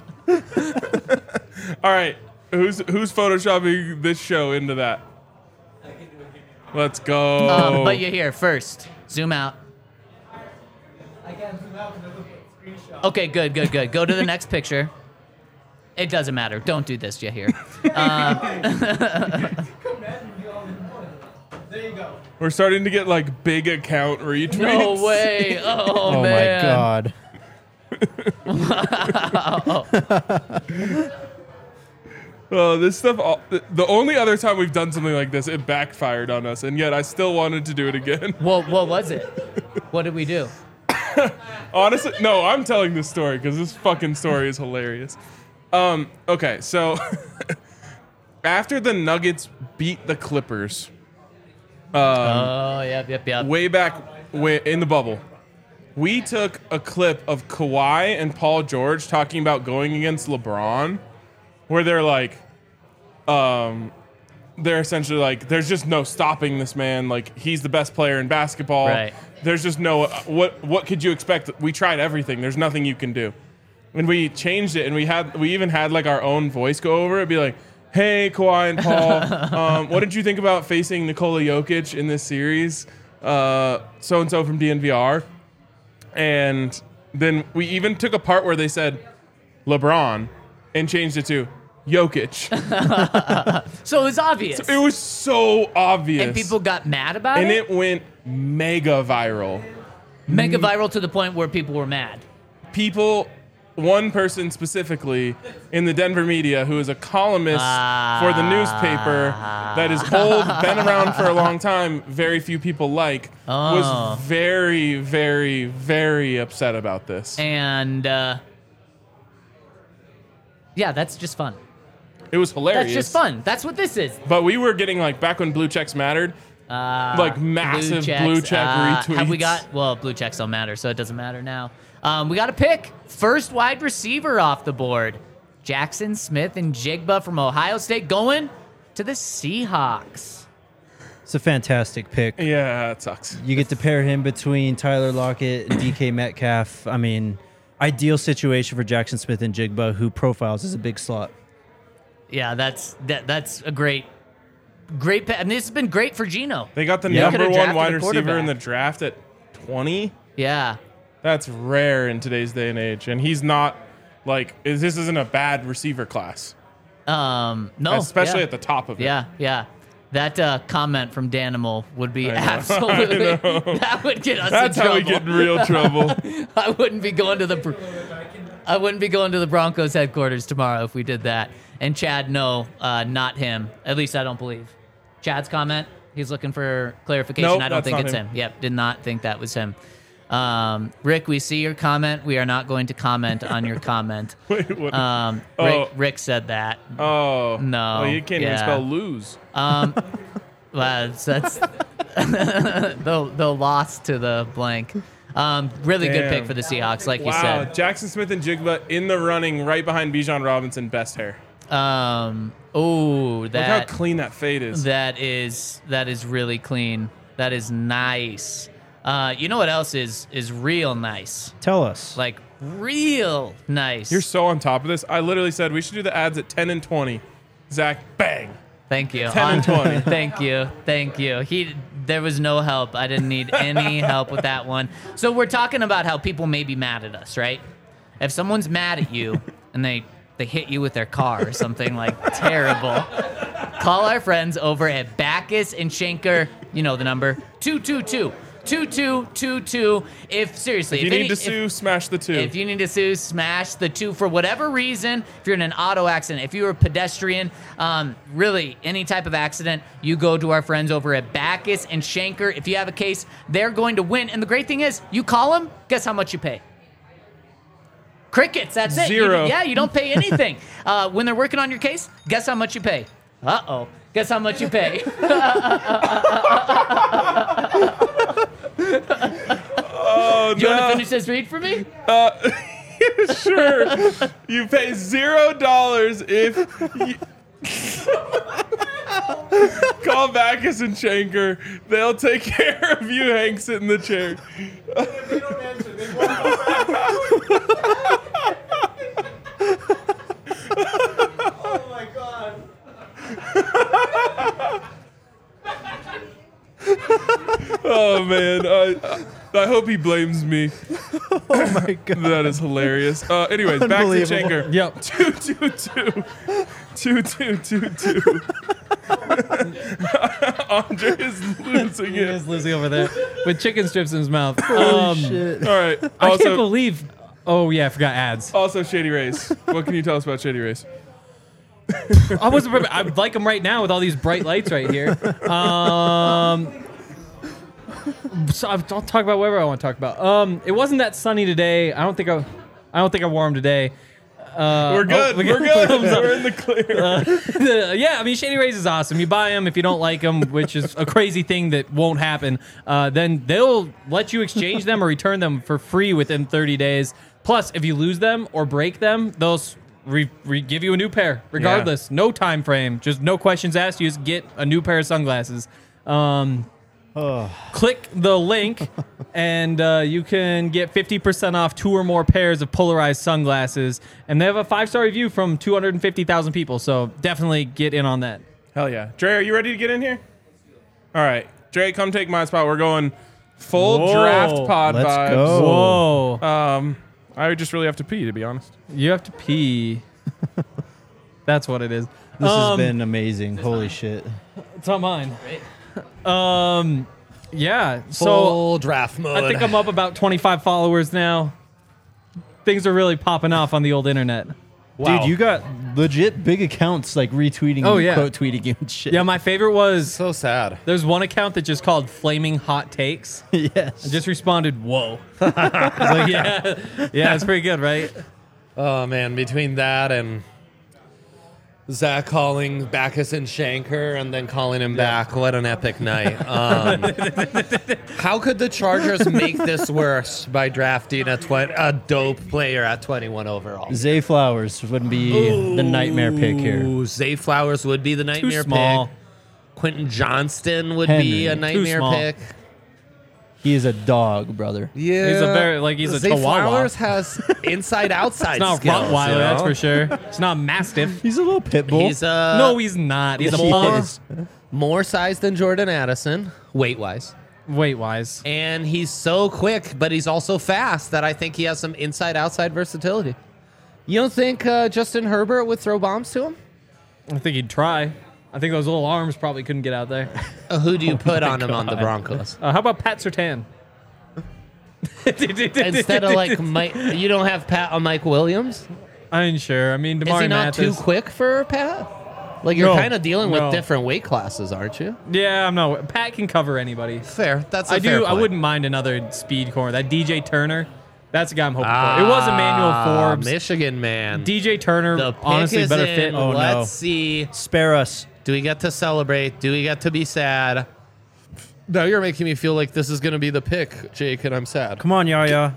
All right. Who's photoshopping this show into that? Let's go. but you're here first. Zoom out. I can't zoom out because I look at screenshot. Okay, good. Go to the next picture. It doesn't matter. Don't do this, Yahir. There you go. We're starting to get like big account retweets. No way. Oh, Oh my man. god. Oh, this stuff. The only other time we've done something like this, it backfired on us, and yet I still wanted to do it again. Well, what was it? What did we do? Honestly, no, I'm telling this story because this fucking story is hilarious. Okay, so after the Nuggets beat the Clippers, Yep. way back in the bubble, we took a clip of Kawhi and Paul George talking about going against LeBron, where they're like, they're essentially like, there's just no stopping this man. Like, he's the best player in basketball. Right. There's just no, what could you expect? We tried everything. There's nothing you can do. And we changed it, and we even had like our own voice go over it, be like, hey, Kawhi and Paul, what did you think about facing Nikola Jokic in this series? So-and-so from DNVR. And then we even took a part where they said LeBron and changed it to Jokic. So it was obvious. It was so obvious. And people got mad about And it? it went mega viral. Mega viral to the point where people were mad. One person specifically in the Denver media who is a columnist for the newspaper that is old, been around for a long time, very few people like, was very, very, very upset about this. And, yeah, that's just fun. It was hilarious. That's just fun. That's what this is. But we were getting, like, back when blue checks mattered, like massive blue check retweets. Have we got, well, blue checks don't matter, so it doesn't matter now. We got a pick. First wide receiver off the board. Jackson Smith-Njigba from Ohio State going to the Seahawks. It's a fantastic pick. Yeah, it sucks. You get to pair him between Tyler Lockett and DK Metcalf. I mean, ideal situation for Jackson Smith-Njigba, who profiles as a big slot. Yeah, that's a great pick. I mean, this has been great for Geno. They got the Yeah. number Could've one drafted wide a receiver in the quarterback. draft at 20. Yeah. That's rare in today's day and age. And he's not, like, this isn't a bad receiver class. No. Especially yeah. at the top of it. Yeah. That comment from Danimal would be I know. absolutely, that would get us That's in how trouble. we get in real trouble. I wouldn't be going to the Broncos headquarters tomorrow if we did that. And Chad, no, not him. At least I don't believe. Chad's comment, he's looking for clarification. Nope, I don't that's think not it's him. him. Yep, did not think that was him. Rick, we see your comment. We are not going to comment on your comment. Wait, what? Rick said that. Oh. No, Oh, you can't even yeah. spell lose. Well, that's the loss to the blank. Really good Damn. pick for the Seahawks, like you Wow. said. Jackson Smith-Njigba in the running right behind Bijan Robinson, best hair. Look Look how clean that fade is. that is really clean. That is nice. You know what else is real nice? Tell us. Like real nice. You're so on top of this. I literally said we should do the ads at 10 and 20. Zach, bang. Thank you. 10 and 20. Thank you. There was no help. I didn't need any help with that one. So we're talking about how people may be mad at us, right? If someone's mad at you and they hit you with their car or something like terrible, call our friends over at Backus and Schenker. You know the number 222-2222. If If you need to sue, smash the 2. If you need to sue, smash the 2 for whatever reason. If you're in an auto accident, if you're a pedestrian, really any type of accident, you go to our friends over at Backus and Schenker. If you have a case, they're going to win. And the great thing is, you call them, guess how much you pay? Crickets, that's it. Zero. You don't pay anything. When they're working on your case, guess how much you pay? Uh-oh. Guess how much you pay? Oh, You want to finish this read for me? Sure. You pay $0 if you call Backus and Schenker. They'll take care of you, Hank, sit in the chair. If you don't answer, they won't go back. Oh my god. Oh, man. I hope he blames me. Oh my god. That is hilarious. Anyways, back to Unbelievable. Schenker. Yep. 2222. Andre is losing He it. is losing over there with chicken strips in his mouth. Shit. All right. I can't Also, believe. Oh yeah, I forgot ads. Shady Race. What can you tell us about Shady Race? I wasn't. I like them right now with all these bright lights right here. So I'll talk about whatever I want to talk about. It wasn't that sunny today. I don't think I wore them today. We're good. We're good. We're in the clear. Yeah, I mean, Shady Rays is awesome. You buy them if you don't like them, which is a crazy thing that won't happen. Then they'll let you exchange them or return them for free within 30 days. Plus, if you lose them or break them, they'll give you a new pair, regardless. Yeah. No time frame. Just no questions asked. You just get a new pair of sunglasses. Click the link and you can get 50% off 2 or more pairs of polarized sunglasses. And they have a 5-star review from 250,000 people. So definitely get in on that. Hell yeah. Dre, are you ready to get in here? All right. Dre, come take my spot. We're going full draft pod Let's vibes. go. Whoa. I just really have to pee, to be honest. You have to pee. That's what it is. This has been amazing. Holy shit. It's not mine. Yeah. Full So draft mode. I think I'm up about 25 followers now. Things are really popping off on the old internet. Wow. Dude, you got legit big accounts like retweeting Oh, you, yeah. quote tweeting you and shit. Yeah, my favorite was So sad. there's one account that just called Flaming Hot Takes. Yes. I just responded, whoa. I was like, yeah, it's pretty good, right? Oh, man. Between that and Zach calling Backus and Shanker and then calling him back. What an epic night. How could the Chargers make this worse by drafting a dope player at 21 overall? Zay Flowers would be the nightmare pick here. Ooh, Zay Flowers would be the nightmare small. pick. Quentin Johnston would Henry. be a Too nightmare small. pick. He is a dog, brother. Yeah, He's a Zay chihuahua. Flowers has inside-outside It's not skills. Rottweiler, you know? that's for sure. It's not Mastiff. He's a little pit bull. He's No, he's not. He's a He pug. is. more size than Jordan Addison, weight-wise. Weight-wise. And he's so quick, but he's also fast that I think he has some inside-outside versatility. You don't think Justin Herbert would throw bombs to him? I think he'd try. I think those little arms probably couldn't get out there. Who do you put on him on the Broncos? How about Pat Surtain? Instead of like Mike, you don't have Pat on Mike Williams? I ain't sure. I mean, Is he DeMar not Mathis. too quick for Pat? Like you're No, kind of dealing with no. different weight classes, aren't you? Yeah, I'm not. Pat can cover anybody. Fair. That's a I fair do. I point. wouldn't mind another speed corner. That DJ Turner. That's the guy I'm hoping for. It was Emmanuel Forbes. Michigan man. DJ Turner, The pick honestly, is better in. fit. Oh, no. Let's see. Spare us. Do we get to celebrate? Do we get to be sad? Now you're making me feel like this is going to be the pick, Jake, and I'm sad. Come on, Yaya.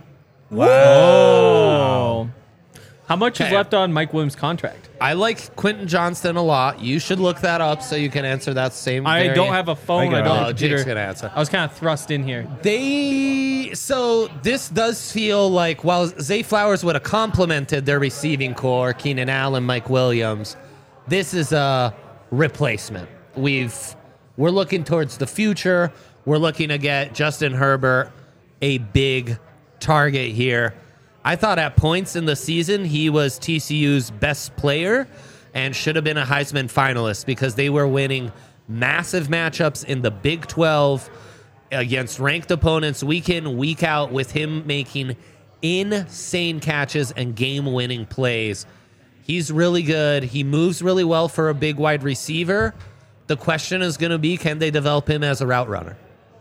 Oh. How much is Okay. left on Mike Williams' contract? I like Quentin Johnston a lot. You should look that up so you can answer that same. I don't have a phone. I I got don't it. have Oh, a Jake's computer. gonna answer. I was kind of thrust in here. So this does feel like while Zay Flowers would have complemented their receiving core, Keenan Allen, Mike Williams, this is a replacement. We're looking towards the future. We're looking to get Justin Herbert a big target here. I thought at points in the season he was TCU's best player and should have been a Heisman finalist because they were winning massive matchups in the Big 12 against ranked opponents week in, week out, with him making insane catches and game-winning plays. He's really good. He moves really well for a big wide receiver. The question is going to be, can they develop him as a route runner?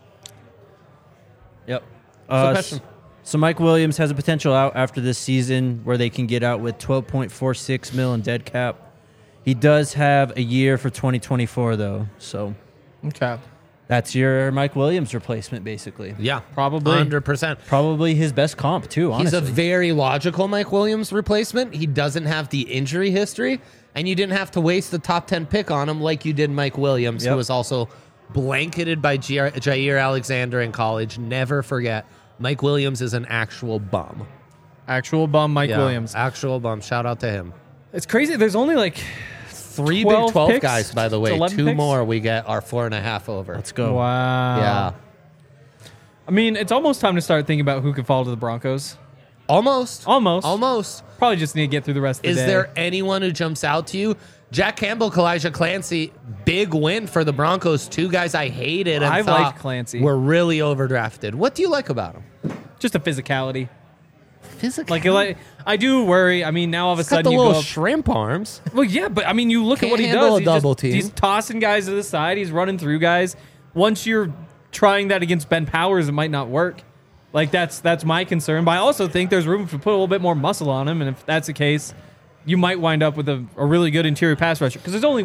Yep. question. So Mike Williams has a potential out after this season where they can get out with $12.46 million in dead cap. He does have a year for 2024 though, so Okay. that's your Mike Williams replacement basically. Yeah, Probably. 100%. Probably his best comp too. He's Honestly, a very logical Mike Williams replacement. He doesn't have the injury history, and you didn't have to waste the top 10 pick on him like you did Mike Williams, Yep. who was also blanketed by Jair Alexander in college. Never forget, Mike Williams is an actual bum. Actual bum Mike Yeah, Williams. Actual bum. Shout out to him. It's crazy. There's only like 3 12 Big 12 picks? guys, by the way. 11 2 picks? more, we get our 4.5 over. let's go. wow. Yeah. I mean, it's almost time to start thinking about who could fall to the Broncos. Almost. Almost. Probably just need to get through the rest of the Is day. there anyone who jumps out to you? Jack Campbell, Kalijah Clancy, big win for the Broncos. 2 guys I hated and I thought liked Clancy. were really overdrafted. What do you like about him? just a physicality? Physical. Like I do worry. I mean, now all of a He's got sudden the you go little up. shrimp arms. Well, yeah, but I mean, you look at Can't what he handle does. a double team. He's tossing guys to the side. He's running through guys. Once you're trying that against Ben Powers, it might not work. Like, that's my concern. But I also think there's room to put a little bit more muscle on him. And if that's the case, you might wind up with a really good interior pass rusher. Because there's only,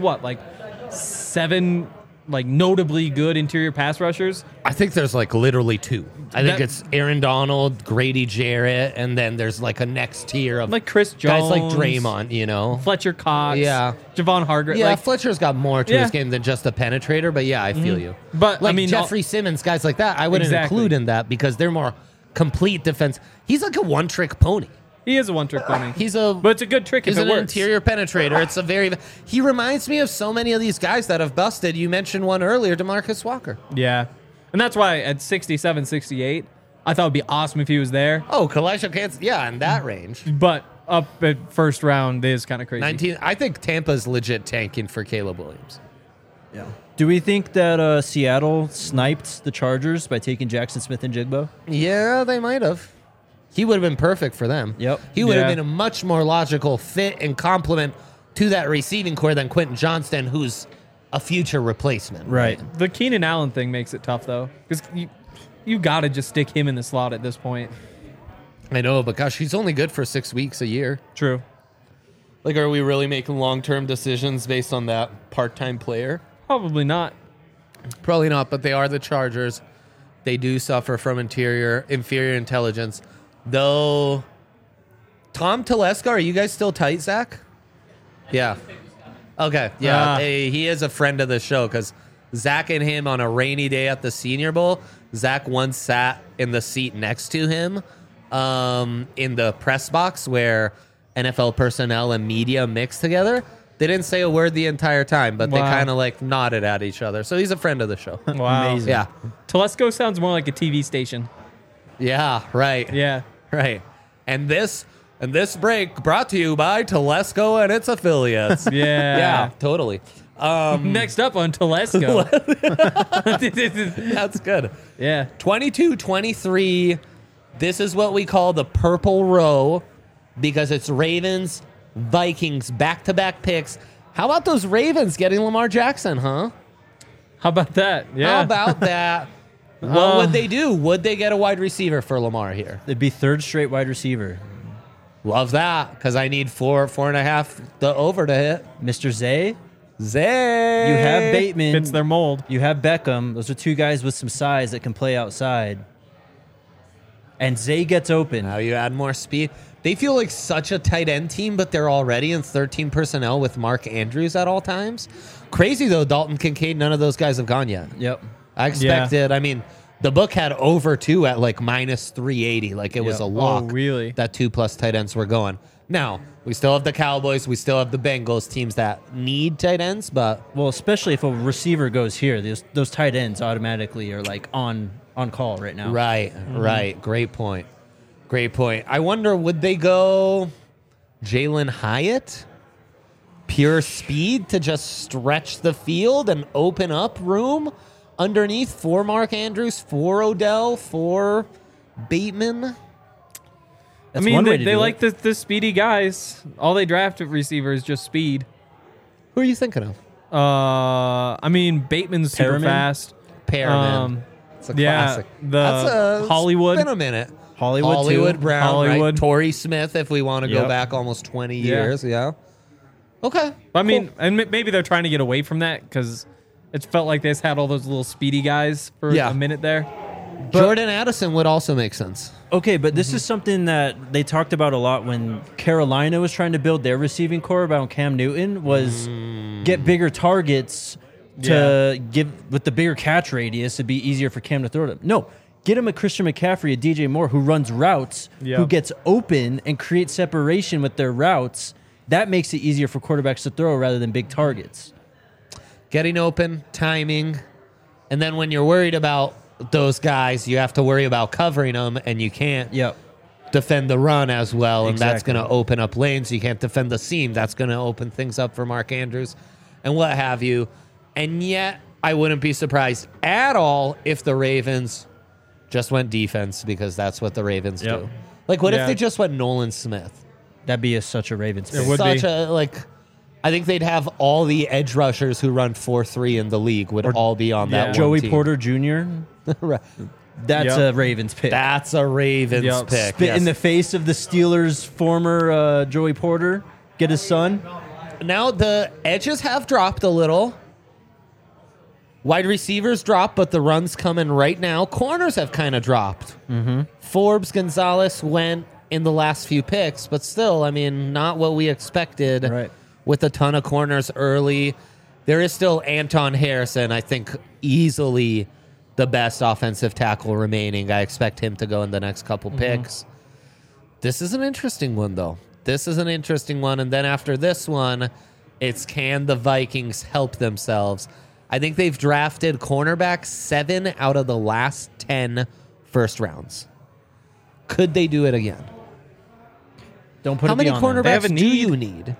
7 notably good interior pass rushers? I think there's literally 2. I think it's Aaron Donald, Grady Jarrett, and then there's a next tier of Chris Jones, guys like Draymond, Fletcher Cox, yeah, Javon Hargrave. Yeah, Fletcher's got more to his game than just a penetrator, but yeah, I feel you. But Jeffrey Simmons, guys like that, I wouldn't include in that because they're more complete defense. He's like a one-trick pony. He is a one-trick pony. But it's a good trick if it works. He's an interior penetrator. He reminds me of so many of these guys that have busted. You mentioned one earlier, DeMarcus Walker. Yeah. And that's why at 67, 68, I thought it would be awesome if he was there. Oh, Kalisha Kansas, yeah, in that range. But up at first round is kind of crazy. 19. I think Tampa's legit tanking for Caleb Williams. Yeah. Do we think that Seattle sniped the Chargers by taking Jackson Smith and Jigbo? Yeah, they might have. He would have been perfect for them. Yep. He would have been a much more logical fit and complement to that receiving core than Quentin Johnston, who's a future replacement. Right. The Keenan Allen thing makes it tough, though, because you got to just stick him in the slot at this point. I know, but gosh, he's only good for 6 weeks a year. True. Are we really making long-term decisions based on that part-time player? Probably not. Probably not, but they are the Chargers. They do suffer from inferior intelligence. Though, Tom Telesco, are you guys still tight, Zach? Yeah. Okay, yeah. He is a friend of the show because Zach and him on a rainy day at the Senior Bowl, Zach once sat in the seat next to him in the press box where NFL personnel and media mix together. They didn't say a word the entire time, but they kind of nodded at each other. So he's a friend of the show. Wow. Amazing. Yeah. Telesco sounds more like a TV station. Yeah, right. Yeah. Right. And this break brought to you by Telesco and its affiliates. Yeah. Yeah, totally. Next up on Telesco. That's good. Yeah. 22-23. This is what we call the purple row because it's Ravens, Vikings, back-to-back picks. How about those Ravens getting Lamar Jackson, huh? How about that? Yeah. How about that? What would they do? Would they get a wide receiver for Lamar here? It'd be third straight wide receiver. Love that, because I need 4.5 the over to hit. Mr. Zay. Zay. You have Bateman. Fits their mold. You have Beckham. Those are 2 guys with some size that can play outside. And Zay gets open. Now you add more speed. They feel like such a tight end team, but they're already in 13 personnel with Mark Andrews at all times. Crazy, though, Dalton Kincaid, none of those guys have gone yet. Yep. I expected, I mean, the book had over 2 at minus 380. It was a lock. Oh, really? That 2+ tight ends were going. Now, we still have the Cowboys. We still have the Bengals, teams that need tight ends, but... Well, especially if a receiver goes here, those tight ends automatically are on call right now. Right, right. Great point. Great point. I wonder, would they go Jalen Hyatt? Pure speed to just stretch the field and open up room underneath for Mark Andrews, for Odell, for Bateman? That's one way to they do like it. the speedy guys. All they draft at receiver is just speed. Who are you thinking of? Bateman's super Perriman? fast. Perriman. It's a classic. The Hollywood. It's been a minute. Hollywood too. Brown, Hollywood. right? Torrey Smith, if we want to go Yep. back almost 20 years. Yeah. Okay. And maybe they're trying to get away from that because it felt like they just had all those little speedy guys for a minute there. Jordan Addison would also make sense. Okay, but this is something that they talked about a lot when Carolina was trying to build their receiving core about Cam Newton was get bigger targets to give with the bigger catch radius. It'd be easier for Cam to throw them. No, get him a Christian McCaffrey, a DJ Moore who runs routes, who gets open and creates separation with their routes. That makes it easier for quarterbacks to throw rather than big targets. Getting open, timing, and then when you're worried about those guys, you have to worry about covering them, and you can't defend the run as well, and that's going to open up lanes. You can't defend the seam. That's going to open things up for Mark Andrews and what have you. And yet, I wouldn't be surprised at all if the Ravens just went defense because that's what the Ravens do. What if they just went Nolan Smith? That'd be such a Ravens It pick. would Such be. a, I think they'd have all the edge rushers who run 4.3 in the league would all be on that one Joey team. Porter Jr. Right. That's a Ravens pick. That's a Ravens pick. Spit in the face of the Steelers' former Joey Porter. Get his son. Now the edges have dropped a little. Wide receivers dropped, but the run's coming right now. Corners have kind of dropped. Mm-hmm. Forbes, Gonzalez went in the last few picks, but still, I mean, not what we expected. Right. With a ton of corners early. There is still Anton Harrison, I think easily the best offensive tackle remaining. I expect him to go in the next couple picks. This is an interesting one, though. This is an interesting one. And then after this one, it's can the Vikings help themselves? I think they've drafted cornerback 7 out of the last 10 first rounds. Could they do it again? Don't put How it many beyond them. They have cornerbacks a do need. you need?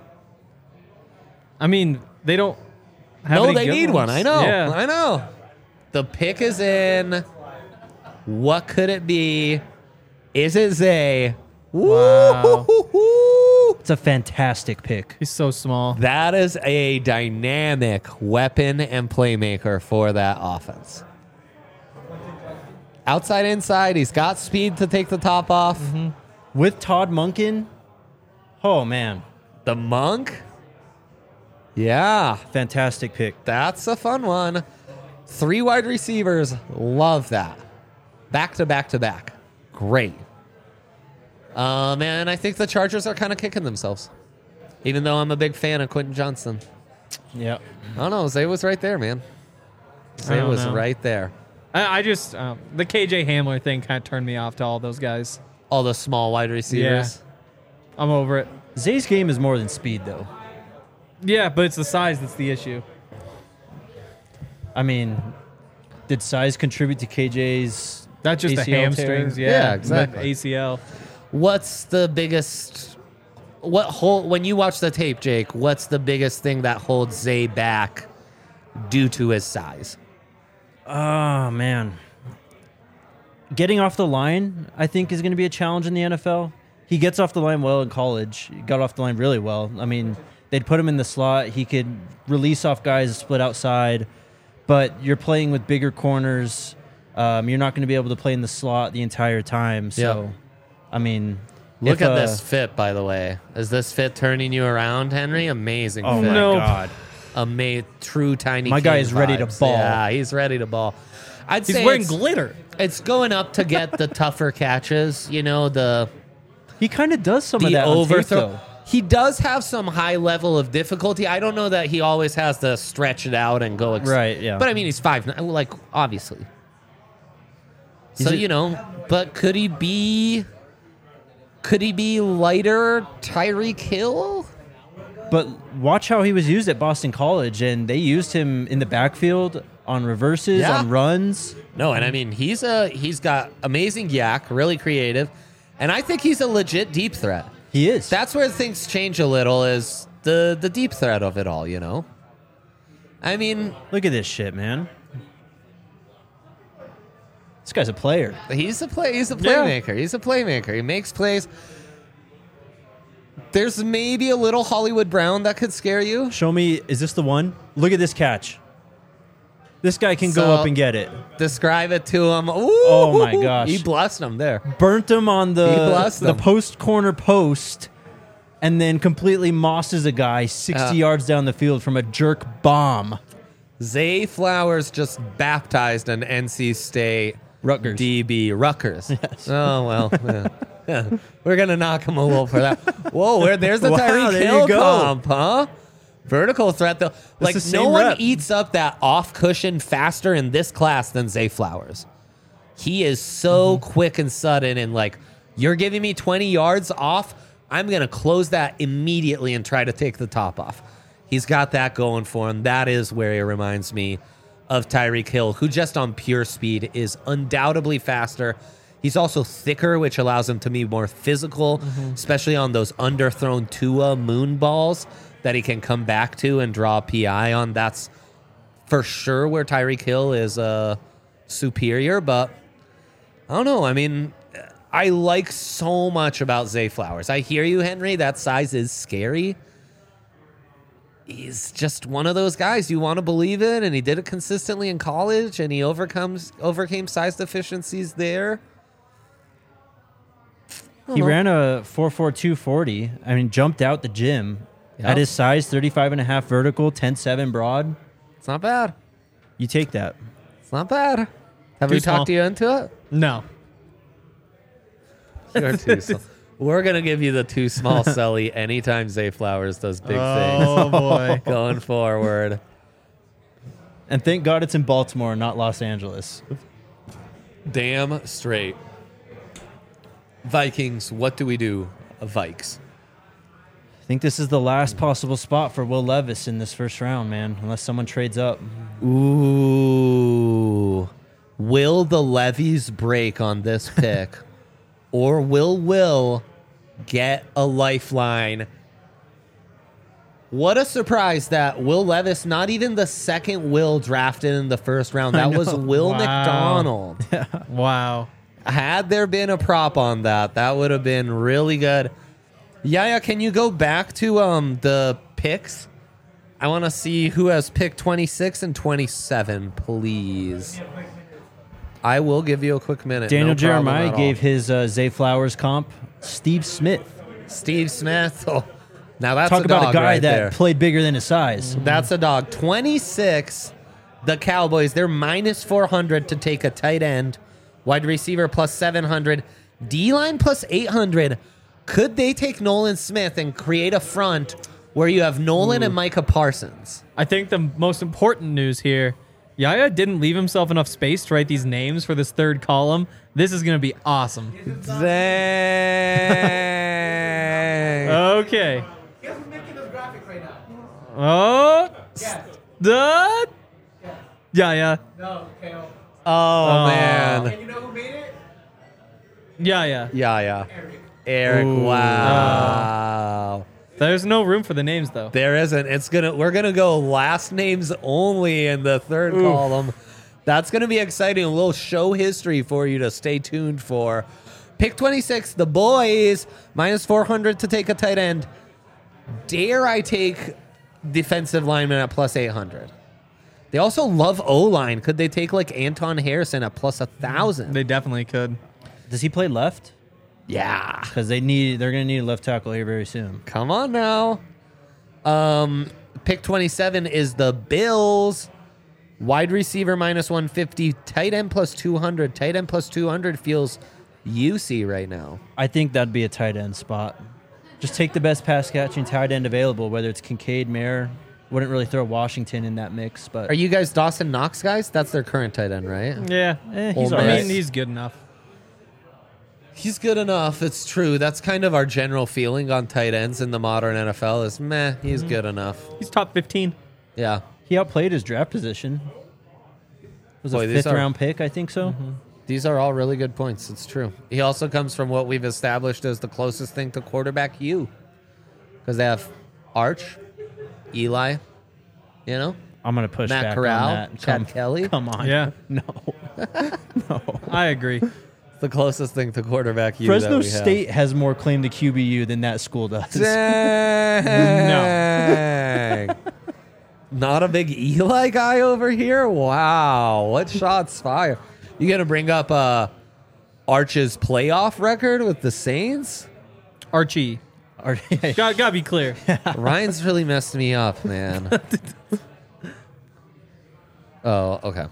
I mean, they don't have No, any they good need one. ones. I know. Yeah. I know. The pick is in. What could it be? Is it Zay? Wow. Woo-hoo-hoo-hoo. It's a fantastic pick. He's so small. That is a dynamic weapon and playmaker for that offense. Outside, inside, he's got speed to take the top off. With Todd Monken, oh, man. The Monk? Yeah, Fantastic pick. that's a fun one. 3 wide receivers, love that. Back to back to back. Great. Man, I think the Chargers are kind of kicking themselves. Even though I'm a big fan of Quentin Johnson. Yeah. I don't know. Zay was right there, man. Zay don't was know. right there. I just the KJ Hamler thing kind of turned me off to all those guys. All the small wide receivers. I'm over it. Zay's game is more than speed, though. Yeah, but it's the size that's the issue. I mean, did size contribute to KJ's Not just the ACL hamstrings. tear? Yeah, Yeah, exactly. The ACL. What's the biggest... when you watch the tape, Jake, what's the biggest thing that holds Zay back due to his size? Oh, man. Getting off the line, I think, is going to be a challenge in the NFL. He gets off the line well in college. He got off the line really well. I mean, they'd put him in the slot. He could release off guys, split outside. But you're playing with bigger corners. You're not going to be able to play in the slot the entire time. So, Yep. I mean... Look if, at this fit, by the way. Is this fit turning you around, Henry? Amazing Oh, fit. my Nope. God. True tiny My guy king is ready to vibes. ball. Yeah, he's ready to ball. I'd He's say wearing it's, glitter. it's going up to get the tougher catches. You know, the He kind of does some of that on tape, overthrow. though. He does have some high level of difficulty. I don't know that he always has to stretch it out and go. Right, yeah. But I mean, he's 5'9", like obviously. He's So a- you know, but could he be lighter Tyreek Hill? But watch how he was used at Boston College, and they used him in the backfield on reverses, Yeah. on runs. No, and I mean he's got amazing yak, really creative, and I think he's a legit deep threat. He is. That's where things change a little, is the deep threat of it all, you know? I mean, Look at this shit, man. This guy's a player. he's a playmaker. He's a playmaker. He makes plays. There's maybe a little Hollywood Brown that could scare you. Show me, is this the one? Look at this catch. This guy can go So- up and get it. Describe it to him. Ooh, Oh, my gosh. He blessed him there. Burnt him on He the blessed them. post corner post, and then completely mosses a guy 60 yards down the field from a jerk bomb. Zay Flowers just baptized an NC State Rutgers. DB. Rutgers. Yes. Oh, well. Yeah. We're going to knock him a little for that. Whoa, there's the Wow, Tyreek there you Hill go. comp, huh? Vertical threat, though. Like, the no same one rep. eats up that off cushion faster in this class than Zay Flowers. He is so quick and sudden, and like, you're giving me 20 yards off, I'm going to close that immediately and try to take the top off. He's got that going for him. That is where he reminds me of Tyreek Hill, who just on pure speed is undoubtedly faster. He's also thicker, which allows him to be more physical, especially on those underthrown Tua moon balls that he can come back to and draw a PI on. That's for sure where Tyreek Hill is superior, but I don't know. I mean, I like so much about Zay Flowers. I hear you, Henry. That size is scary. he's just one of those guys you want to believe in, and he did it consistently in college, and he overcame size deficiencies there. He ran a 4.42 40. I mean, jumped out the gym. Yep. At his size, 35.5 vertical, 10.7 broad. It's not bad. You take that. It's not bad. Have Too we small. talked you into it? No. You're too small. We're going to give you the too small Sully anytime Zay Flowers does big Oh, boy. things going forward. And thank God it's in Baltimore, not Los Angeles. Damn straight. Vikings, what do we do? Vikes. I think this is the last possible spot for Will Levis in this first round, man, unless someone trades up. Ooh. Will the levies break on this pick? Or will Will get a lifeline? What a surprise that Will Levis, not even the second Will drafted in the first round. That was Will Wow. McDonald. Wow. Had there been a prop on that, that would have been really good. Yaya, can you go back to the picks? I want to see who has pick 26 and 27, please. I will give you a quick minute. Daniel No problem Jeremiah at gave all. his Zay Flowers comp Steve Smith. Steve Smith. Oh, now that's Talk a dog about a guy right that there. played bigger than his size. That's a dog. 26, the Cowboys. They're minus 400 to take a tight end. Wide receiver plus 700. D-line plus 800. Could they take Nolan Smith and create a front where you have Nolan and Micah Parsons? I think the most important news here, Yaya didn't leave himself enough space to write these names for this third column. This is going to be awesome. Dang. Okay. Guess who's making this graphic right now? Oh. Yes. The. Yaya. No, KO. Oh, man. And you know who made it? Yaya. Yeah. Eric. Eric, Ooh. wow. There's no room for the names, though. There isn't. We're gonna go last names only in the third column. That's gonna be exciting. A little show history for you to stay tuned for. Pick 26, the boys, minus 400 to take a tight end. Dare I take defensive lineman at plus 800? They also love O-line. Could they take like Anton Harrison at plus 1,000? They definitely could. Does he play left? Yeah. Because they're going to need a left tackle here very soon. Come on now. Pick 27 is the Bills. Wide receiver minus 150. Tight end plus 200. Tight end plus 200 feels UC right now. I think that'd be a tight end spot. Just take the best pass catching tight end available, whether it's Kincaid, Mayer. Wouldn't really throw Washington in that mix, but Are you guys Dawson Knox guys? That's their current tight end, right? Yeah. he's Ole all I Miss. mean, he's good enough. He's good enough. It's true. That's kind of our general feeling on tight ends in the modern NFL is meh, he's good enough. He's top 15. Yeah. He outplayed his draft position. It was Boy, a these fifth are- round pick, I think so. These are all really good points. It's true. He also comes from what we've established as the closest thing to quarterback you. Because they have Arch, Eli, you know, I'm going to push Matt back Corral, on that. Chad Kelly. Come on. Yeah. No. I agree. The closest thing to quarterback you Fresno that we have. State has more claim to QBU than that school does. Dang. Not a big Eli guy over here? Wow. What shots fired? You going to bring up Arch's playoff record with the Saints? Archie. Gotta be clear. Ryan's really messed me up, man. Oh, okay.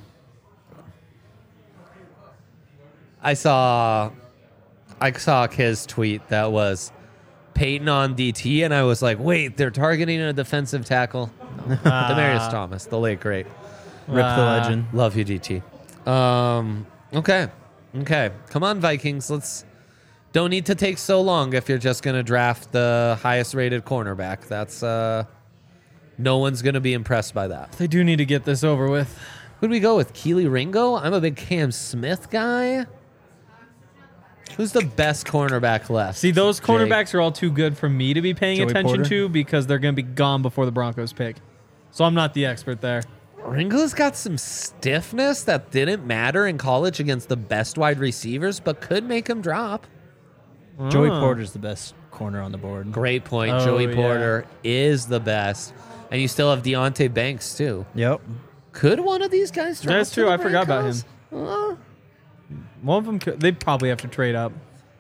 I saw Kiz tweet that was Peyton on DT, and I was like, wait, they're targeting a defensive tackle? No. Demaryius Thomas, the late great. Rip the legend. Love you, DT. Okay. Come on, Vikings. Don't need to take so long if you're just going to draft the highest rated cornerback. That's no one's going to be impressed by that. They do need to get this over with. Who'd we go with? Keely Ringo? I'm a big Cam Smith guy. Who's the best cornerback left? See, those Jake? cornerbacks are all too good for me to be paying Joey attention Porter? to because they're going to be gone before the Broncos pick. So I'm not the expert there. Ringo's got some stiffness that didn't matter in college against the best wide receivers, but could make him drop. Joey Oh. Porter's the best corner on the board. Great point. Oh, Joey yeah. Porter is the best. And you still have Deontay Banks, too. Yep. Could one of these guys drop That's to true. the I forgot about him. Broncos? One of them, they'd probably have to trade up.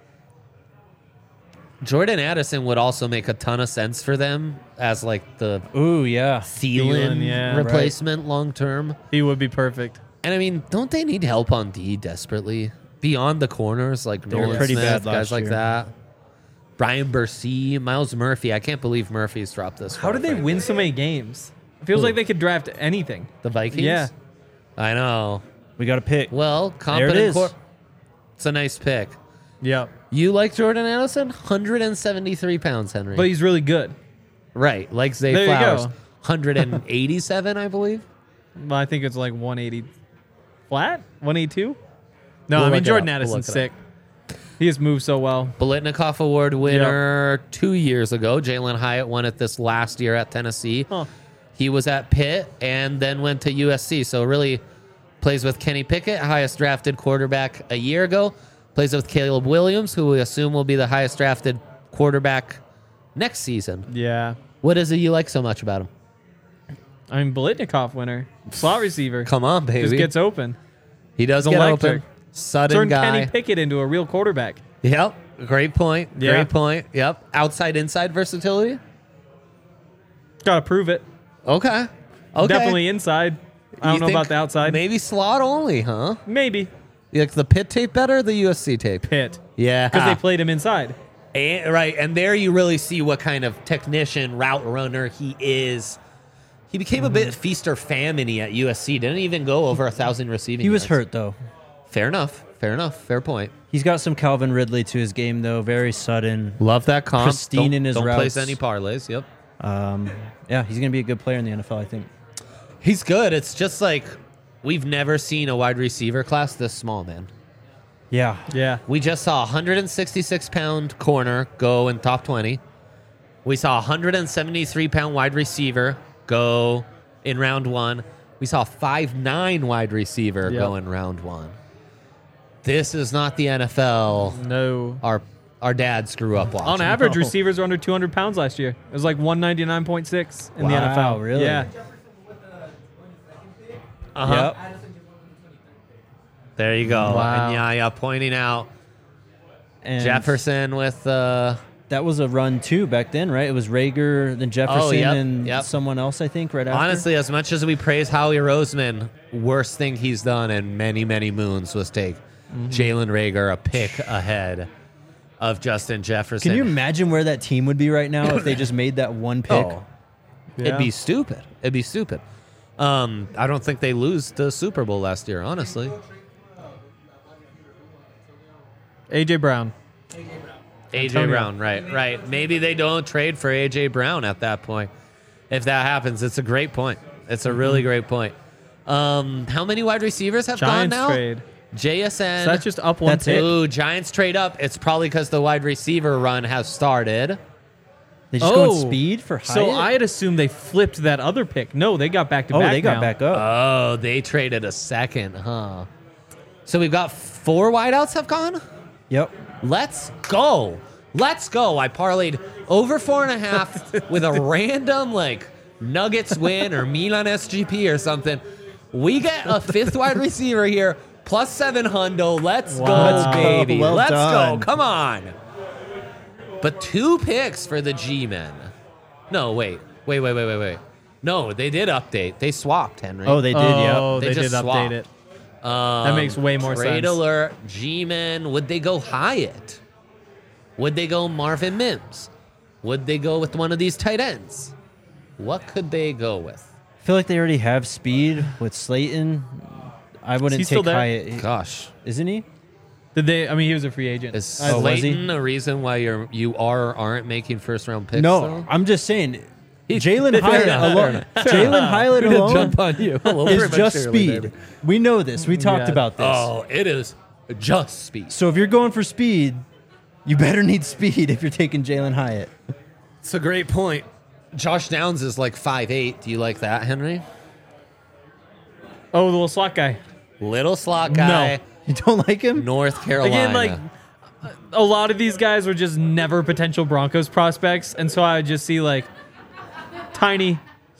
Jordan Addison would also make a ton of sense for them as like the Ooh, yeah. Thielen yeah, replacement long term. He would be perfect. And I mean, don't they need help on D desperately? Beyond the corners, like They were Nolan pretty Smith, bad guys last like year. that. Brian Bursey, Miles Murphy. I can't believe Murphy's dropped this How far, did they frankly. win so many games? It feels Who? like they could draft anything. The Vikings? Yeah. I know. We got to pick. Well, competent is. It's a nice pick. Yeah. You like Jordan Addison? 173 pounds, Henry. But he's really good. Right, like Zay There you Flowers. go. 187, I believe. Well, I think it's like 180 flat? 182? No, We'll I mean, look it Jordan up. We'll Addison's look it sick. He has moved so well. Bolitnikoff Award winner 2 years ago. Jalen Hyatt won it this last year at Tennessee. Huh. He was at Pitt and then went to USC. So really plays with Kenny Pickett, highest drafted quarterback a year ago. Plays with Caleb Williams, who we assume will be the highest drafted quarterback next season. Yeah. What is it you like so much about him? I mean, Bolitnikoff winner. Slot receiver. Come on, baby. Just gets open. He does He's get electric. open. Sudden Turn guy. Kenny Pickett into a real quarterback. Yep. Great point. Yeah. Great point. Yep. Outside inside versatility. Gotta prove it. Okay. Okay. Definitely inside. I You don't know think about the outside. Maybe slot only, huh? Maybe. You like the Pitt tape better or the USC tape? Pitt. Yeah. Because they played him inside. Right. And there you really see what kind of technician, route runner he is. He became a bit feast or famine-y at USC. Didn't even go over 1,000 receiving He was yards. hurt, though. Fair enough. Fair enough. Fair point. He's got some Calvin Ridley to his game, though. Very sudden. Love that comp. Pristine Don't, in his don't place routes. any parlays. Yep. Yeah, he's going to be a good player in the NFL, I think. He's good. It's just like we've never seen a wide receiver class this small, man. Yeah. Yeah. We just saw a 166-pound corner go in top 20. We saw a 173-pound wide receiver go in round one. We saw a 5'9" wide receiver go in round one. This is not the NFL No. our dads grew up watching. On average, No. receivers were under 200 pounds last year. It was like 199.6 in the Wow, NFL. really? Yeah. Uh-huh. Yep. There you go. Wow. And yeah, pointing out And Jefferson with that was a run, too, back then, right? It was Rager, then Jefferson, Oh, yep, and yep. someone else, I think, right after. honestly, as much as we praise Howie Roseman, worst thing he's done in many, many moons was take Jalen Reagor a pick ahead of Justin Jefferson. Can you imagine where that team would be right now if they just made that one pick? Oh, Yeah. it'd be stupid. It'd be stupid. I don't think they lose the Super Bowl last year, honestly. A.J. Brown. AJ Antonio. Brown, right. Maybe they don't trade for AJ Brown at that point. If that happens, it's a great point. It's a really great point. How many wide receivers have Giants gone now? trade. JSN. So that's just up one That's pick. it. Ooh, Giants trade up. It's probably because the wide receiver run has started. They just go on Oh. speed for Hyatt? So I had assumed they flipped that other pick. No, they got back to Oh, back. they got now. back up. Oh, they traded a second, huh? So we've got 4 wideouts have gone? Yep. Let's go. Let's go. I parlayed over 4.5 with a random like Nuggets win or Milan SGP or something. We get a 5th wide receiver here, plus 7 hundo. Let's Wow. go, baby. Well Let's done. go. Come on. But 2 picks for the G-men. No, wait. No, they did update. They swapped, Henry. Oh, they did, yeah. Oh, They they, just did update swapped. it. That makes way more Trade sense. alert, G-men. Would they go Hyatt? Would they go Marvin Mims? Would they go with one of these tight ends? What could they go with? I feel like they already have speed with Slayton. I wouldn't he still take there? Hyatt. Gosh, Isn't he? Did they? I mean, he was a free agent. is Oh, was he? Slayton a reason why you aren't making first round picks? No, though? I'm just saying. Jalen Fair Hyatt enough, alone. Jalen Hyatt alone on you. is just speed. We know this. We talked Yeah. about this. Oh, it is just speed. So if you're going for speed, you better need speed if you're taking Jalen Hyatt. It's a great point. Josh Downs is like 5'8". Do you like that, Henry? Oh, the little slot guy. Little slot guy, You don't like him? North Carolina. Again, like a lot of these guys were just never potential Broncos prospects, and so I would just see like tiny,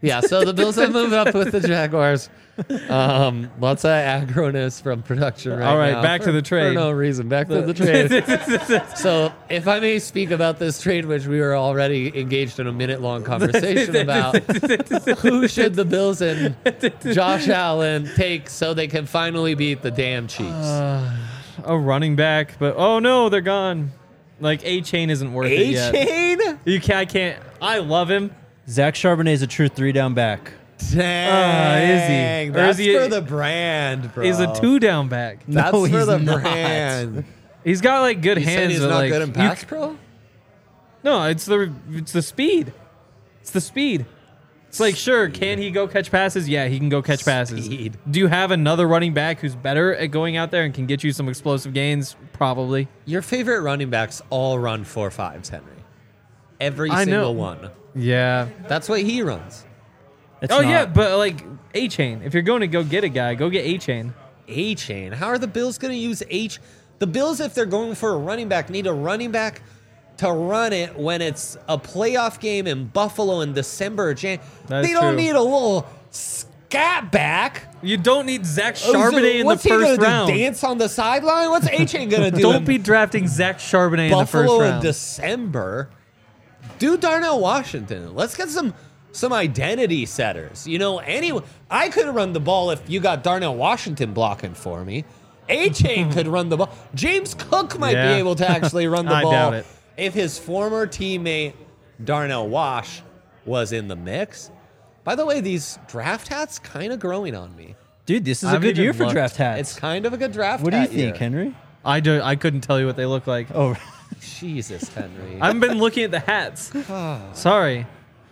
Yeah, so the Bills have moved up with the Jaguars. Lots of aggroness from production right now. All right, back to the trade. For no reason. Back to the trade. So if I may speak about this trade, which we were already engaged in a minute-long conversation about, who should the Bills and Josh Allen take so they can finally beat the damn Chiefs? A running back, but oh no, they're gone. Like A-Chain isn't worth it yet. A-Chain? I can't. I love him. Zach Charbonnet is a true 3-down back. Dang. Is he? That's Or is he for the brand, bro. He's a 2-down back. That's No, for he's the not. brand. He's got like good You said hands. he's but, not like, good in pass pro? No, it's the speed. It's the speed. It's like, sure, can he go catch passes? Yeah, he can go catch passes. Speed. Do you have another running back who's better at going out there and can get you some explosive gains? Probably. Your favorite running backs all run 4.5s, Henry. Every I know. single one. Yeah. That's what he runs. It's Oh not. yeah, but like A-Chain. If you're going to go get a guy, go get A-Chain. A-Chain. How are the Bills going to use H? The Bills, if they're going for a running back, need a running back to run it when it's a playoff game in Buffalo in December or January. That's They don't true. need a little scat back. You don't need Zach Charbonnet in the What's he first gonna round. do, dance on the sideline? What's A-Chain going to do? Don't in be drafting Zach Charbonnet in the first Buffalo in round. December? Do Darnell Washington. Let's get some identity setters. You know, I could run the ball if you got Darnell Washington blocking for me. A-Chain could run the ball. James Cook might Yeah. be able to actually run the I ball doubt it. if his former teammate Darnell Wash was in the mix. By the way, these draft hats kind of growing on me. Dude, this is I a haven't good year even for looked. draft hats. It's kind of a good draft What do you hat think, year. Henry? I couldn't tell you what they look like. Oh, Jesus, Henry. I haven't been looking at the hats. Sorry.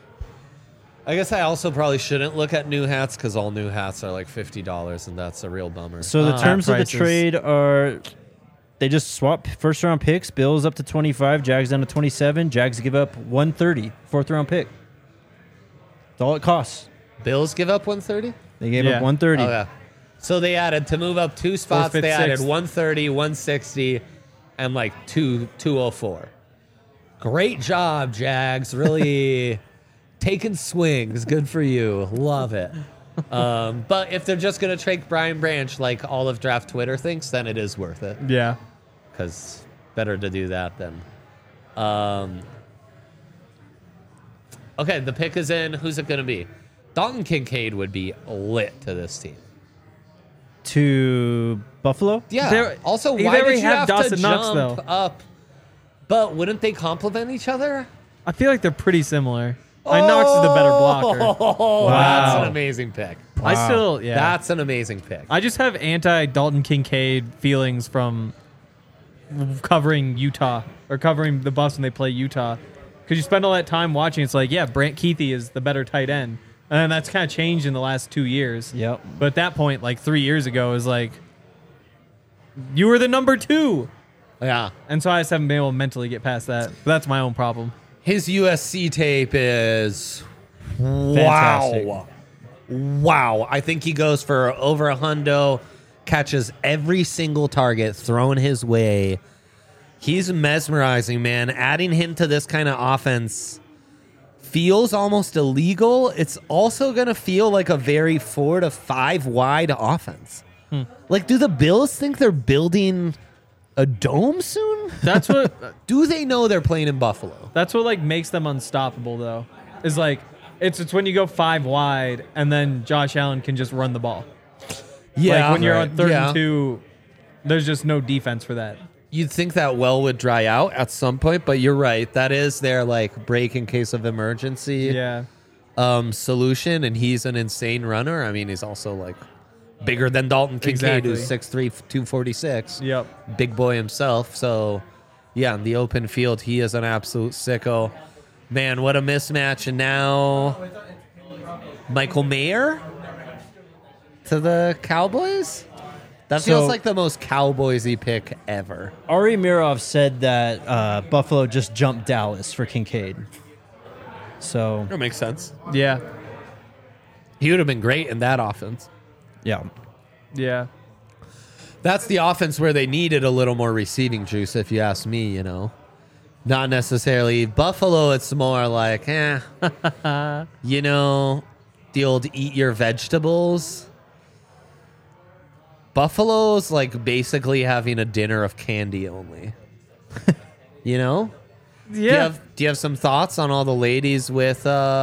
I guess I also probably shouldn't look at new hats because all new hats are like $50, and that's a real bummer. so the Hat terms of the prices. trade are they just swap first round picks. Bills up to 25, Jags down to 27. Jags give up 130, fourth round pick. That's all it costs. Bills give up 130? They gave Yeah. up 130. Oh, yeah. So they added, to move up 2 spots, fifth, they added sixth. 130, 160, and like 204. Great job, Jags. Really taking swings. Good for you. Love it. But if they're just going to take Brian Branch like all of draft Twitter thinks, then it is worth it. Yeah. Because better to do that than. Okay, the pick is in. Who's it going to be? Dalton Kincaid would be lit to this team. To Buffalo? Yeah. They're- Also, they why did already you have have to Dawson Knox, jump though. up? But wouldn't they complement each other? I feel like they're pretty similar. Knox is the better blocker. Oh, Wow. that's an amazing pick. I still, yeah. That's an amazing pick. I just have anti-Dalton Kincaid feelings from covering Utah or covering the Buffs when they play Utah. Because you spend all that time watching, it's like, yeah, Brant Keithy is the better tight end. And that's kind of changed in the last 2 years. Yep. But at that point, like 3 years ago, it was like, you were the number 2. Yeah. And so I just haven't been able to mentally get past that. But that's my own problem. His USC tape is Fantastic. wow. Wow. I think he goes for over a hundo, catches every single target thrown his way. He's mesmerizing, man. Adding him to this kind of offense feels almost illegal. It's also going to feel like a very 4 to 5 wide offense. Like, do the Bills think they're building a dome soon? That's what Do they know they're playing in Buffalo? That's what like makes them unstoppable though. Is like it's when you go 5 wide and then Josh Allen can just run the ball. Like when you're on 3rd and 2, there's just no defense for that. You'd think that well would dry out at some point, but you're right. That is their like break in case of emergency Yeah. solution, and he's an insane runner. I mean, he's also like bigger than Dalton Kincaid, Exactly. who's 6'3", 246. Yep. Big boy himself. So, yeah, in the open field, he is an absolute sicko. Man, what a mismatch. And now Michael Mayer to the Cowboys? That So- feels like the most Cowboysy pick ever. Ari Mirov said that Buffalo just jumped Dallas for Kincaid. So, That makes sense. Yeah. He would have been great in that offense. yeah. Yeah. That's the offense where they needed a little more receiving juice, if you ask me, you know. Not necessarily. Buffalo, it's more like, you know, the old eat your vegetables. Buffalo's like basically having a dinner of candy only. You know? Yeah. Do you have some thoughts on all the ladies with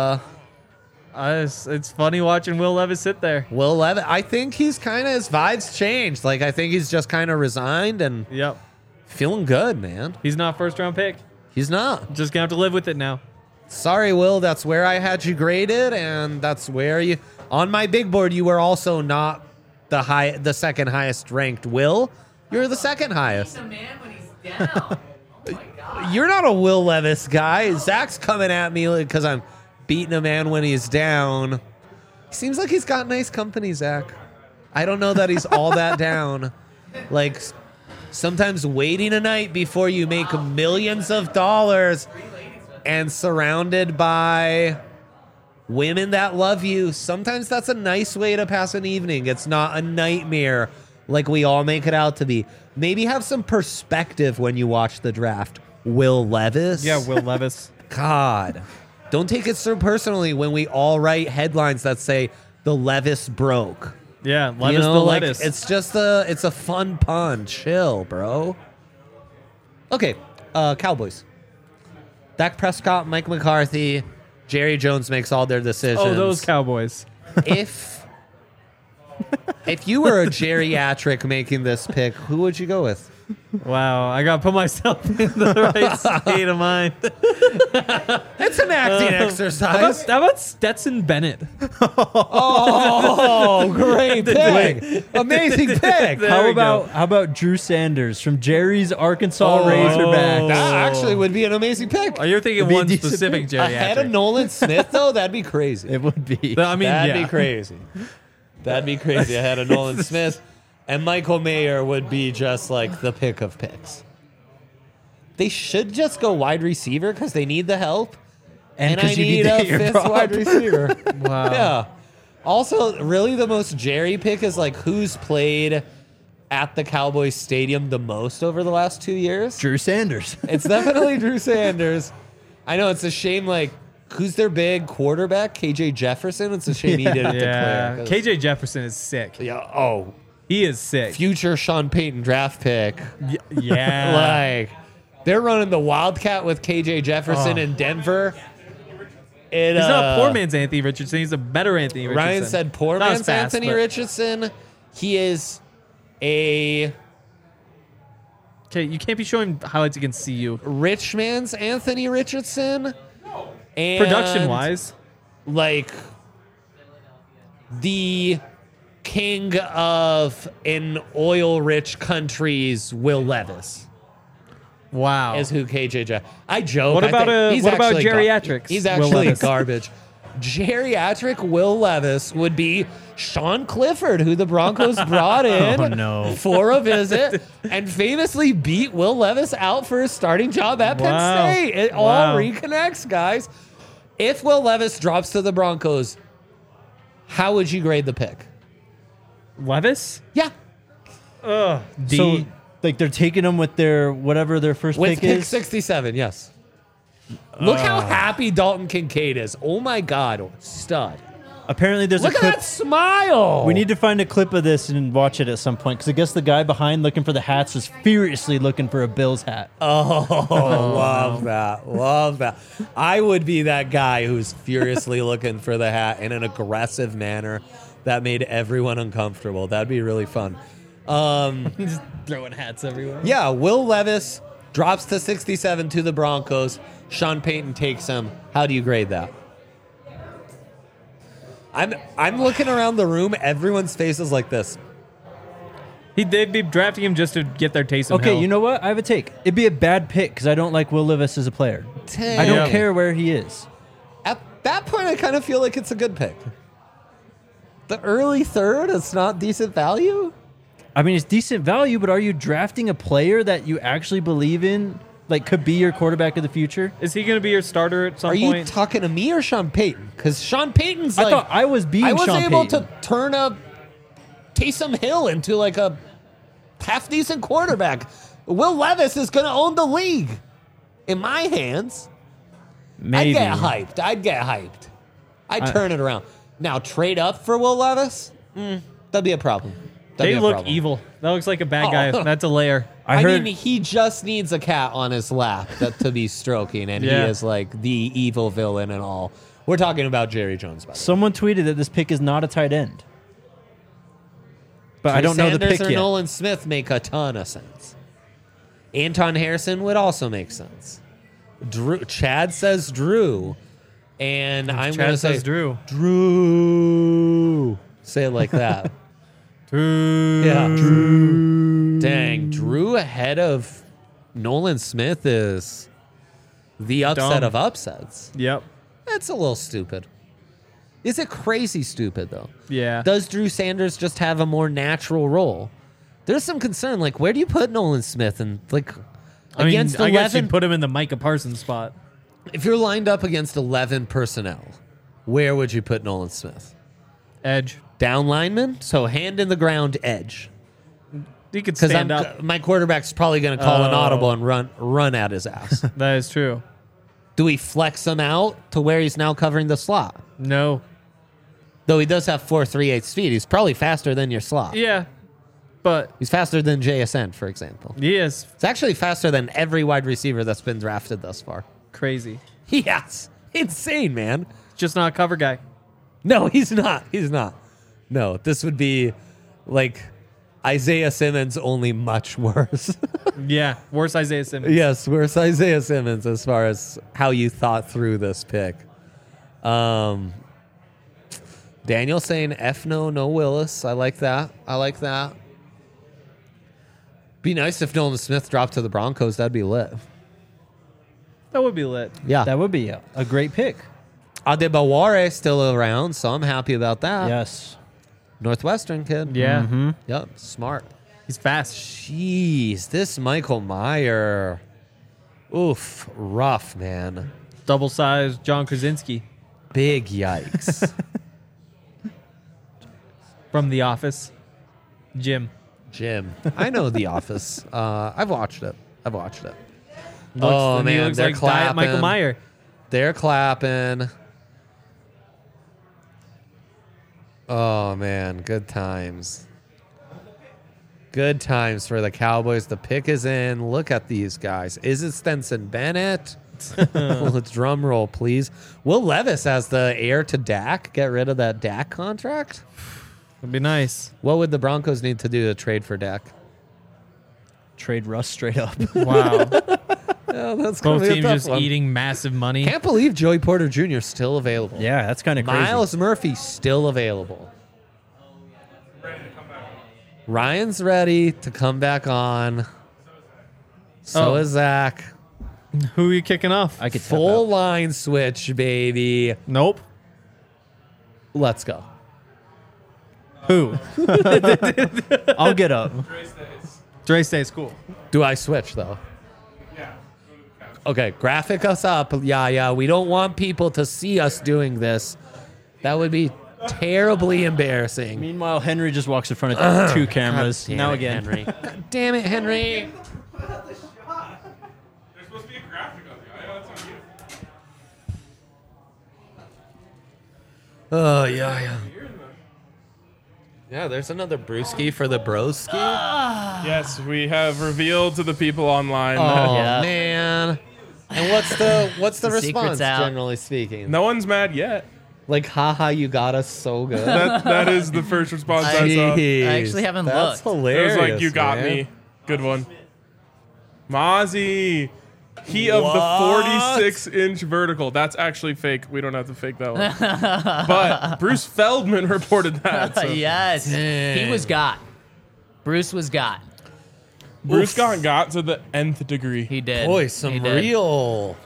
It's funny watching Will Levis sit there. Will Levis? I think he's kind of, his vibes changed. Like, I think he's just kind of resigned and Yep. feeling good, man. He's not first round pick. He's not. Just gonna have to live with it now. Sorry, Will. That's where I had you graded, and that's where you on my big board. You were also not the second highest ranked. Will, you're the second highest. The man when he's down. Oh my god. You're not a Will Levis guy. Zach's coming at me because I'm beating a man when he's down. Seems like he's got nice company, Zach. I don't know that he's all that down. Like, sometimes waiting a night before you make millions of dollars and surrounded by women that love you, sometimes that's a nice way to pass an evening. It's not a nightmare like we all make it out to be. Maybe have some perspective when you watch the draft. Will Levis? Yeah, Will Levis. God. Don't take it so personally when we all write headlines that say the Levis broke. Yeah, Levis You know, the like, lettuce. it's just it's a fun pun. Chill, bro. Okay, Cowboys. Dak Prescott, Mike McCarthy, Jerry Jones makes all their decisions. Oh, those Cowboys. If you were a geriatric making this pick, who would you go with? Wow, I gotta put myself in the right state of mind. It's an acting exercise. How about Stetson Bennett? Oh, great pick. Amazing pick. There How we about Drew Sanders from Jerry's Arkansas Razorbacks? That actually would be an amazing pick. Oh, you're thinking It'd be a one decent specific pick. Ahead of geriatric. Nolan Smith, though, that'd be crazy. It would be. I mean, That'd yeah. be crazy. That'd be crazy ahead of Nolan Smith. And Michael Mayer would be just like the pick of picks. They should just go wide receiver because they need the help. And I 'cause you need to a get your fifth prop. wide receiver. Wow. Yeah. Also, really the most Jerry pick is like who's played at the Cowboys Stadium the most over the last 2 years. Drew Sanders. It's definitely Drew Sanders. I know it's a shame, like, who's their big quarterback? KJ Jefferson? It's a shame he didn't Yeah, declare. KJ Jefferson is sick. Yeah, oh, He is sick. future Sean Payton draft pick. Yeah. Like, they're running the Wildcat with KJ Jefferson in Denver. He's not a poor man's Anthony Richardson. He's a better Anthony Richardson. Ryan said poor Not as man's fast, Anthony but- Richardson. He is a Okay, you can't be showing highlights against CU. rich man's Anthony Richardson. And Production-wise. like the king of an oil-rich country's Will Levis Wow. is who KJ Jeff. I joke. What I about, think he's what about actually geriatrics, He's Will actually Levis? garbage. Geriatric Will Levis would be Sean Clifford, who the Broncos brought in Oh, no. for a visit and famously beat Will Levis out for his starting job at Penn Wow. State. It all Wow. reconnects, guys. If Will Levis drops to the Broncos, how would you grade the pick? Levis? Yeah. D. So, like, they're taking them with their whatever their first With pick pick is. 67, yes. Look how happy Dalton Kincaid is. Oh my God, stud. Apparently, there's Look a at clip. that smile. We need to find a clip of this and watch it at some point because I guess the guy behind looking for the hats is furiously looking for a Bills hat. Oh, love that. Love that. I would be that guy who's furiously looking for the hat in an aggressive manner that made everyone uncomfortable. That'd be really fun. Just throwing hats everywhere. Yeah, Will Levis drops to 67 to the Broncos. Sean Payton takes him. How do you grade that? I'm looking around the room. Everyone's face is like this. They'd be drafting him just to get their Taysom Okay, Hill. you know what? I have a take. It'd be a bad pick because I don't like Will Levis as a player. I don't Yeah. care where he is. At that point, I kind of feel like it's a good pick. The early third, it's not decent value? I mean, it's decent value, but are you drafting a player that you actually believe in, like could be your quarterback of the future? Is he going to be your starter at some Are you point? talking to me or Sean Payton? Because Sean Payton's I like... thought I was being I was Sean able Payton. to turn a Taysom Hill into like a half-decent quarterback. Will Levis is going to own the league in my hands. Maybe. I'd get hyped. I'd turn it around. Now, trade up for Will Levis? That'd be a problem. They look evil. That looks like a bad guy. That's a layer. I mean, he just needs a cat on his lap to be stroking, and he is like the evil villain and all. We're talking about Jerry Jones, by the way. Someone tweeted that this pick is not a tight end. But I don't know the pick or yet. Nolan Smith make a ton of sense. Anton Harrison would also make sense. Chad says Drew, and I'm going to say Drew. Drew. Say it like that. Drew. Yeah. Drew. Dang, Drew ahead of Nolan Smith is the upset of upsets. Yep. That's a little stupid. Is it crazy stupid, though? Yeah. Does Drew Sanders just have a more natural role? There's some concern. Like, where do you put Nolan Smith? And, like, against 11... I guess you'd put him in the Micah Parsons spot. If you're lined up against 11 personnel, where would you put Nolan Smith? Edge. Down lineman? So hand in the ground edge. He could stand up. My quarterback's probably going to call an audible and run at his ass. That is true. Do we flex him out to where he's now covering the slot? No. Though he does have 4.38 speed. He's probably faster than your slot. Yeah. But he's faster than JSN, for example. He is. It's actually faster than every wide receiver that's been drafted thus far. Crazy. Yes. Insane, man. Just not a cover guy. No, he's not. He's not. No, this would be like Isaiah Simmons, only much worse. Yeah, worse Isaiah Simmons. Yes, worse Isaiah Simmons as far as how you thought through this pick. Daniel saying F no Willis. I like that. Be nice if Nolan Smith dropped to the Broncos. That'd be lit. That would be lit. Yeah. That would be a great pick. Adebaware still around, so I'm happy about that. Yes. Northwestern kid. Yeah. Mm-hmm. Yep, smart. He's fast. Jeez, this Michael Mayer. Oof, rough, man. Double-sized John Krasinski. Big yikes. From The Office. Jim. I know The Office. I've watched it. Looks, oh, man, he looks they're like clapping. Diet Michael Mayer. They're clapping. Oh, man, good times. Good times for the Cowboys. The pick is in. Look at these guys. Is it Stenson Bennett? Let's drum roll, please. Will Levis has the heir to Dak. Get rid of that Dak contract. Would be nice. What would the Broncos need to do to trade for Dak? Trade Russ straight up. Wow. Yeah, that's Both be a teams tough just one. eating massive money. Can't believe Joey Porter Jr. is still available. Yeah, that's kind of crazy. Miles Murphy still available. Ryan's ready to come back on. So is Zach. Who are you kicking off? I could tap Full out. line switch, baby. Nope. Let's go. Who? I'll get up. Dre stays cool. Do I switch, though? Okay, graphic us up. Yeah. We don't want people to see us doing this. That would be terribly embarrassing. Meanwhile, Henry just walks in front of two cameras. Damn Now it, again. Henry. God damn it, Henry. There's supposed to be a graphic on the guy. That's on you. Oh, yeah. Yeah, there's another brewski for the broski. Yes, we have revealed to the people online Oh, that man. And what's the The secret's response, out. generally speaking? no one's mad yet. Like, haha, you got us so good. That is the first response I saw. Jeez, I actually haven't that's looked. It hilarious. was like, you got man. me. Good one. Mozzie. He of the What? 46-inch vertical. That's actually fake. We don't have to fake that one. But Bruce Feldman reported that. So Yes. He was got. Bruce was got. Bruce got to the nth degree. He did. Boy, He some did. real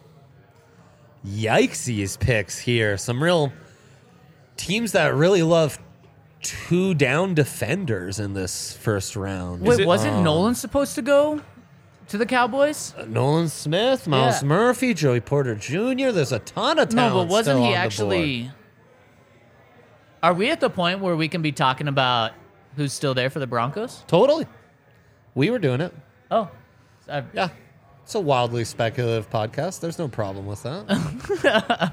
yikesies picks here. Some real teams that really love two down defenders in this first round. Wait, wasn't Nolan supposed to go to the Cowboys? Nolan Smith, Miles Yeah. Murphy, Joey Porter Jr. There's a ton of talent. No, but wasn't still he on the actually? board. Are we at the point where we can be talking about who's still there for the Broncos? Totally. We were doing it. Oh, Yeah. It's a wildly speculative podcast. There's no problem with that.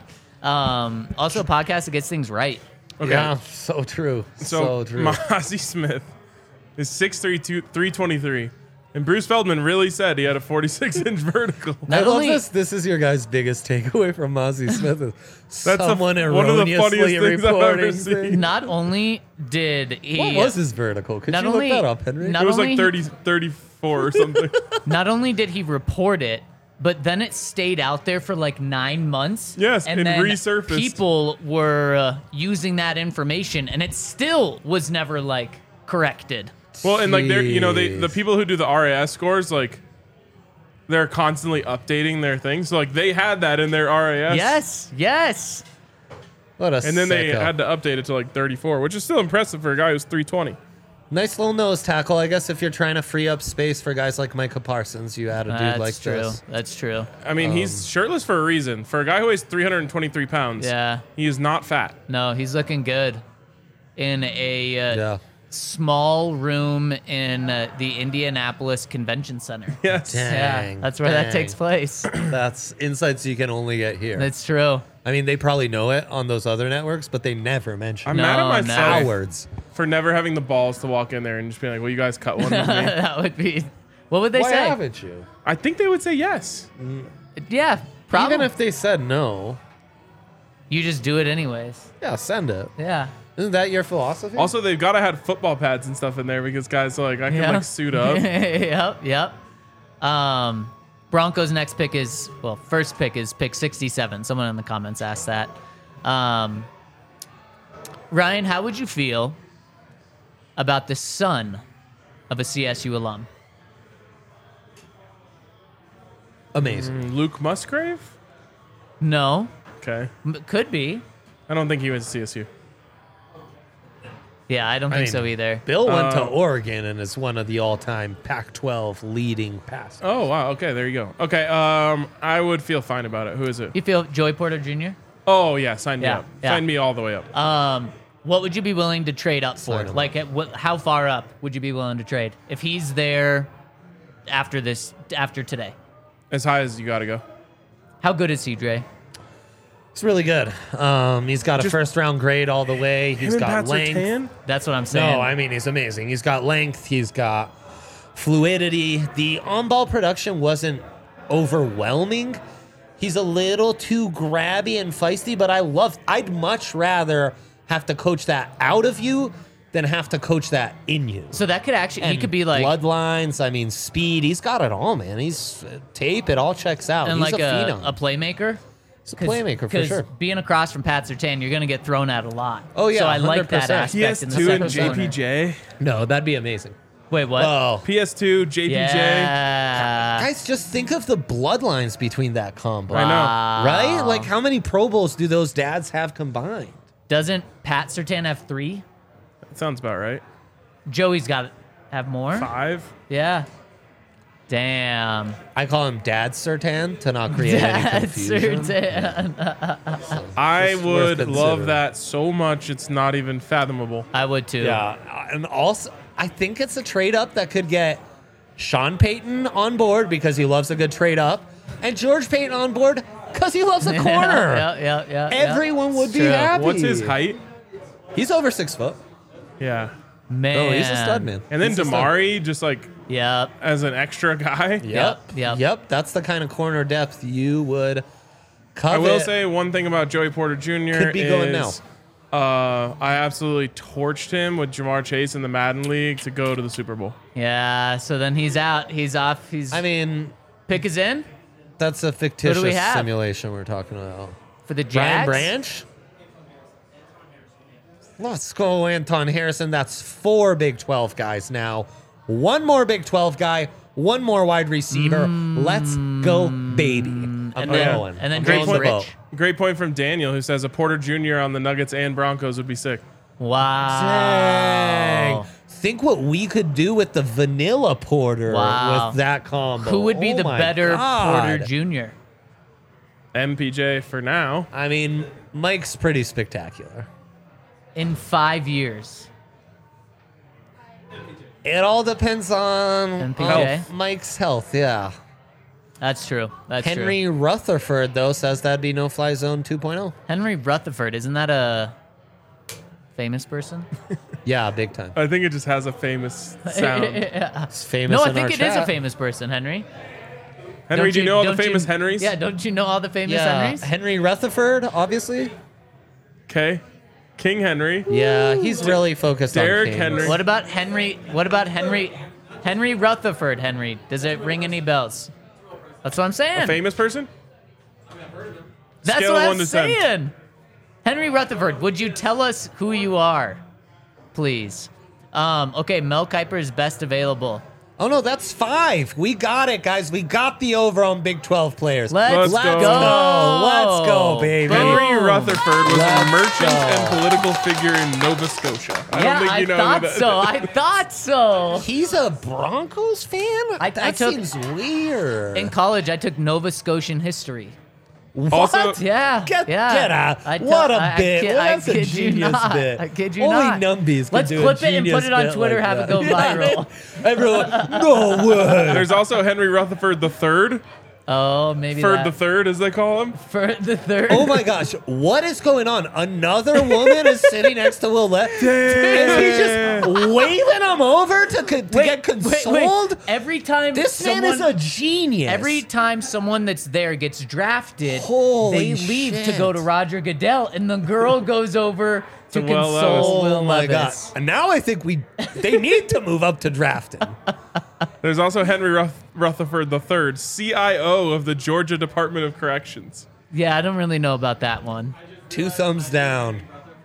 Also, a podcast that gets things right. Okay. Yeah, so true. So true. Ozzie Smith is 6'3", 323. And Bruce Feldman really said he had a 46-inch vertical. I Not love only- this. This is your guys' biggest takeaway from Ozzie Smith. Is That's someone one of the funniest erroneously things I've ever reporting seen. things. Not only did he, What was his vertical? Could Not you only- look that up, Henry? not It was like only- 30, 34 or something. not only did he report it, but then it stayed out there for like 9 months. Yes, and it then resurfaced. people were using that information, and it still was never like corrected. Well, and like they're the Jeez. people who do the RAS scores, like they're constantly updating their things. So like they had that in their RAS. Yes. What a And then they sicko. had to update it to like 34, which is still impressive for a guy who's 320. Nice little nose tackle. I guess if you're trying to free up space for guys like Micah Parsons, you add a dude That's like true. this. That's true. I mean, he's shirtless for a reason. For a guy who weighs 323 pounds, Yeah. he is not fat. No, he's looking good in a Yeah. small room in the Indianapolis Convention Center. Yes. Dang, Yeah, that's where that dang. takes place. That's insights you can only get here. That's true. I mean, they probably know it on those other networks, but they never mention I'm it. mad at No, myself Cowards. for never having the balls to walk in there and just being like, "Well, you guys cut one with me." That would be. What would they Why say? haven't you? I think they would say yes. Yeah, probably. Even if they said no, you just do it anyways. yeah, send it. Yeah. Isn't that your philosophy? Also, they've got to have football pads and stuff in there because guys are like, I can Yeah. like suit up. Yep. Broncos' next pick is first pick is pick 67. Someone in the comments asked that. Ryan, how would you feel about the son of a CSU alum? Amazing. Luke Musgrave? No, Okay. could be. I don't think he went to CSU. Yeah, I don't think mean, so either. Bill went to Oregon and is one of the all-time Pac-12 leading passers. Oh, wow. Okay, there you go. Okay, I would feel fine about it. Who is it? You feel Joey Porter Jr.? Oh, yeah, sign me Yeah, up. yeah. Sign me all the way up. What would you be willing to trade up for? Sign him Like, how far up would you be willing to trade if he's there after today? As high as you got to go. How good is he, Dre? It's really good. He's got a Just- first-round grade all the way. He's Him and got Pat length. Surtain? That's what I'm saying. No, I mean, he's amazing. He's got length. He's got fluidity. The on-ball production wasn't overwhelming. He's a little too grabby and feisty, but I'd much rather have to coach that out of you than have to coach that in you. So that could actually, he And could be like, bloodlines. I mean, speed. He's got it all, man. He's tape. It all checks out. and He's like a a phenom. playmaker. He's a playmaker for Because sure. being across from Pat Surtain, you're going to get thrown at a lot. Oh, yeah, So I like that 100%. aspect in the PS2 and second corner. JPJ. No, that'd be amazing. Wait, what? Oh, PS2, JPJ. Yeah. guys, just think of the bloodlines between that combo. I know. Right? Like, how many Pro Bowls do those dads have combined? Doesn't Pat Surtain have 3? That sounds about right. Joey's got to have more? 5. Yeah. Damn. I call him Dad Sertan to not create any Pat confusion. Surtain. I It's worth would love considering. that so much, it's not even fathomable. I would too. Yeah, and also, I think it's a trade up that could get Sean Payton on board because he loves a good trade up, and George Payton on board because he loves a corner. Yeah. Everyone would It's be true. happy. What's his height? He's over 6 foot. Yeah. Man. Oh, he's a stud, man. And then He's a stud. Damari, just like Yep. as an extra guy. Yep. That's the kind of corner depth you would covet. I will say one thing about Joey Porter Jr. Could be going is, I absolutely torched him with Jamar Chase in the Madden League to go to the Super Bowl. Yeah. So then he's out. He's off. I mean, Pick is in that's a fictitious we have? simulation we're talking about. for the Brian Jags. Branch? Let's go, Anton Harrison. That's 4 Big 12 guys now. 1 more Big 12 guy, 1 more wide receiver. Let's go, baby. I'm And going. then I'm James going Rich. boat. Great point from Daniel, who says a Porter Jr. on the Nuggets and Broncos would be sick. Wow. Dang. Think what we could do with the vanilla Porter Wow. with that combo. Who would be Oh the my better God. Porter Jr.? MPJ for now. I mean, Mike's pretty spectacular. in 5 years? It all depends on MPJ? Mike's health, yeah. That's true. That's Henry true. Rutherford, though, says that'd be no-fly zone 2.0. Henry Rutherford, isn't that a famous person? Yeah, big time. I think it just has a famous sound. It's famous No, I in think our it is a chat. famous person, Henry. Henry, do you know all the don't famous Henrys? Yeah, don't you know all the famous Yeah, Henrys? Henry Rutherford, obviously. Okay. King Henry. Yeah, he's really focused on Derrick kings. Henry. What about Henry? What about Henry? Henry Rutherford, Henry. Does it ring any bells? That's what I'm saying. A famous person? That's Scale what of I'm 1 to 10. saying. Henry Rutherford, would you tell us who you are, please? Okay, Mel Kiper is best available. Oh, no, that's 5. We got it, guys. We got the over on Big 12 players. Let's go. Let's go, baby. Henry Boom. Rutherford was a Let's merchant go. and political figure in Nova Scotia. I Yeah, don't think you know who thought that so. I thought so. He's a Broncos fan? I That took- seems weird. In college, I took Nova Scotian history. Also, Yeah, Get yeah. out. What a bit. Well, that's a kid you genius not. bit. I kid you Only not. numbies can Let's do a clip it and put genius it on bit Twitter, like have that. it go viral. Everyone, no way. there's also Henry Rutherford the Third. Oh, maybe Third that. the Third, as they call him. For the third. Oh my gosh, what is going on? Another woman is sitting next to Will Levis. Is he just waving him over to get consoled? Every time This man is a genius. Every time someone that's there gets drafted, Holy they leave to shit. go to Roger Goodell, and the girl goes over to To Will console Levis. Will Oh my god! Levis. And now I think they need to move up to drafting. There's also Henry Rutherford III, CIO of the Georgia Department of Corrections. Yeah, I don't really know about that one. 2 thumbs down.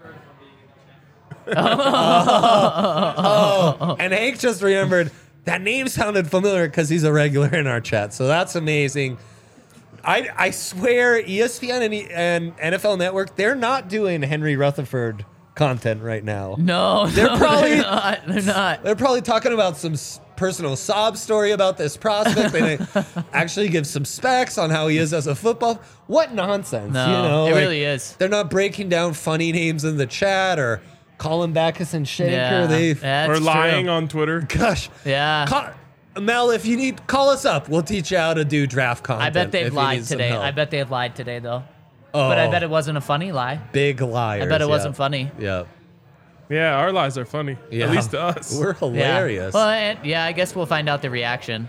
Oh, and Hank just remembered that name sounded familiar because he's a regular in our chat. So that's amazing. I swear ESPN and NFL Network, they're not doing Henry Rutherford content right now. No, They're probably- they're not. They're probably talking about some personal sob story about this prospect. They actually give some specs on how he is as a football. What nonsense, No, you know? it like, really is. They're not breaking down funny names in the chat or Colin Backus and Shaker. Yeah, They, that's Or lying true. on Twitter. gosh, Yeah. Mel, if you need, call us up. We'll teach you how to do draft content. I bet they've if you lied need some today. help. I bet they've lied today, though. Oh, But I bet it wasn't a funny lie. big liars. I bet it yeah. wasn't funny. Yeah. Yeah, our lies are funny. Yeah. At least to us. We're hilarious. Yeah. Well, yeah, I guess we'll find out the reaction.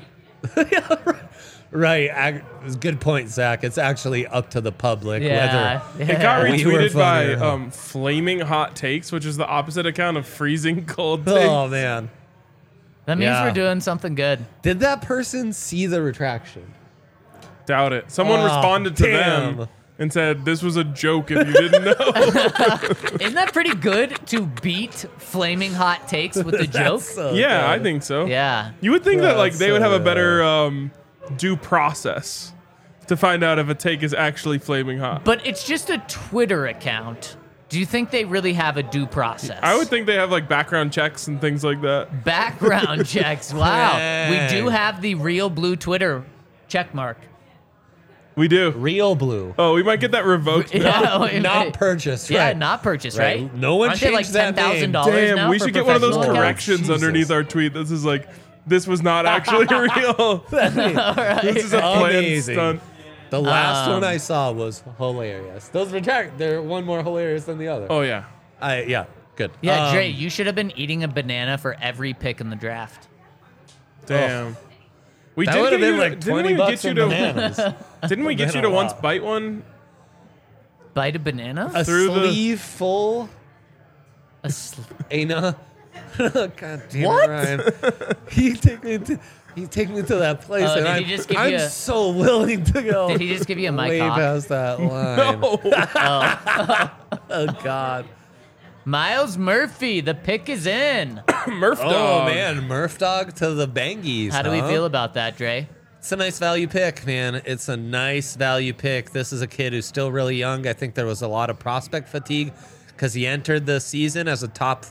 Right. Good point, Zach. It's actually up to the public Yeah. whether. It got We were retweeted funny by or not. Flaming Hot Takes, which is the opposite account of Freezing Cold Takes. Oh, man. That means Yeah. we're doing something good. Did that person see the retraction? Doubt it. Someone Oh, responded to damn. them and said, "This was a joke if you didn't know." Isn't that pretty good to beat flaming hot takes with the joke? That's so Yeah, I good. think so. Yeah. You would think that like That's they would so have a better due process to find out if a take is actually flaming hot. But it's just a Twitter account. Do you think they really have a due process? I would think they have like background checks and things like that. Background checks. Wow. We do Dang. have the real blue Twitter check mark. We do. Real blue. Oh, we might get that revoked. Yeah, wait, Not wait. purchased, Yeah, right. not purchased, Right. right? No one Aren't they like changed that name. $10,000 Damn, now we for should get one of those professional accounts? corrections Jesus. underneath our tweet. This is like, this was not actually real. This is a planned Amazing. stunt. The last one I saw was hilarious. Those retract, they're one more hilarious than the other. Oh yeah. Yeah, good. Yeah, Dre, you should have been eating a banana for every pick in the draft. Damn. We That did would have get been you like to, 20 didn't we bucks get you in to bananas. Didn't we get you been to a once lot. bite one? Bite a banana? A Through the- sleeve full. A sl- Ana. God damn What? it, Ryan. He take me to that place, Oh, and did he just give I'm you a- so willing to go. Did he just give you a mic way cock? past that line? No. Oh God. Miles Murphy, the pick is in. Murph Oh dog. man, Murph dog to the Bangies. How do we feel about that, Dre? It's a nice value pick, man. It's a nice value pick. This is a kid who's still really young. I think there was a lot of prospect fatigue because he entered the season as a top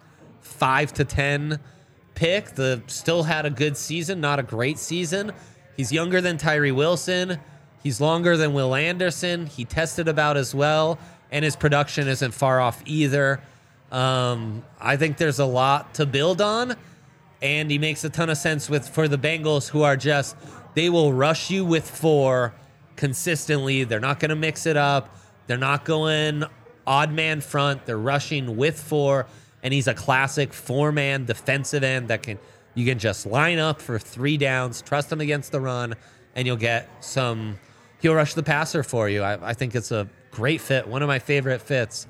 5 to 10 pick. Still had a good season, not a great season. He's younger than Tyree Wilson. He's longer than Will Anderson. He tested about as well, and his production isn't far off either. I think there's a lot to build on, and he makes a ton of sense for the Bengals, who are just They will rush you with 4 consistently. They're not going to mix it up. They're not going odd man front. They're rushing with 4, and he's a classic 4-man defensive end that you can just line up for 3 downs, trust him against the run, and you'll get some. He'll rush the passer for you. I think it's a great fit. One of my favorite fits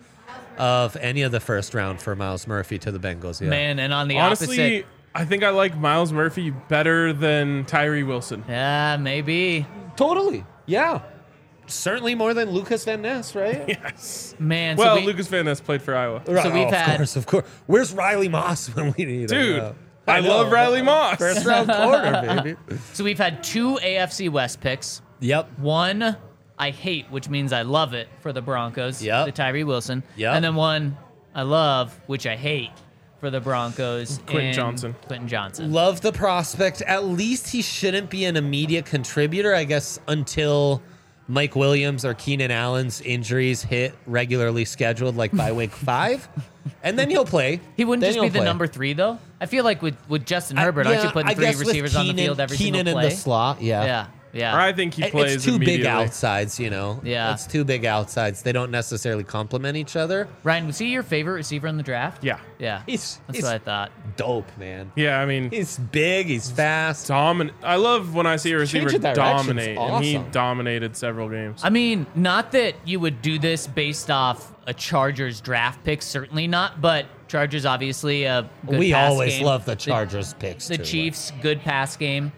of any of the first round for Myles Murphy to the Bengals. Yeah. Man, and on the Honestly, opposite. I think I like Myles Murphy better than Tyree Wilson. Yeah, maybe. Totally. Yeah. Certainly more than Lucas Van Ness, right? Yes. Man, Well, Lucas Van Ness played for Iowa. So we've had- Of course. Where's Riley Moss when we need him? Dude, I love Riley Moss. First round corner, baby. So we've had 2 AFC West picks. Yep. One I hate, which means I love it for the Broncos, Yep. the Tyree Wilson. Yep. And then one I love, which I hate for the Broncos. Quentin Johnson. Quentin Johnson. Love the prospect. At least he shouldn't be an immediate contributor, I guess, until Mike Williams or Keenan Allen's injuries hit regularly scheduled, like by week 5. And then he'll play. He wouldn't Then just be he'll the play. number 3, though. I feel like with Justin Herbert, aren't you Yeah, putting I 3 guess with receivers on the Keenan- field every Keenan single in play? the slot, yeah. Yeah. I think he plays It's 2 big immediately. outsides, you know? Yeah. It's 2 big outsides. They don't necessarily complement each other. Ryan, was he your favorite receiver in the draft? Yeah. Yeah. He's That's what I thought. dope, man. Yeah, I mean, He's big. He's fast. dominant. I love when I see a receiver Change of direction's dominate, and he awesome. dominated several games. I mean, not that you would do this based off a Chargers draft pick, certainly not, but Chargers obviously a good We pass always game. love the Chargers picks, The too. Chiefs, good pass game.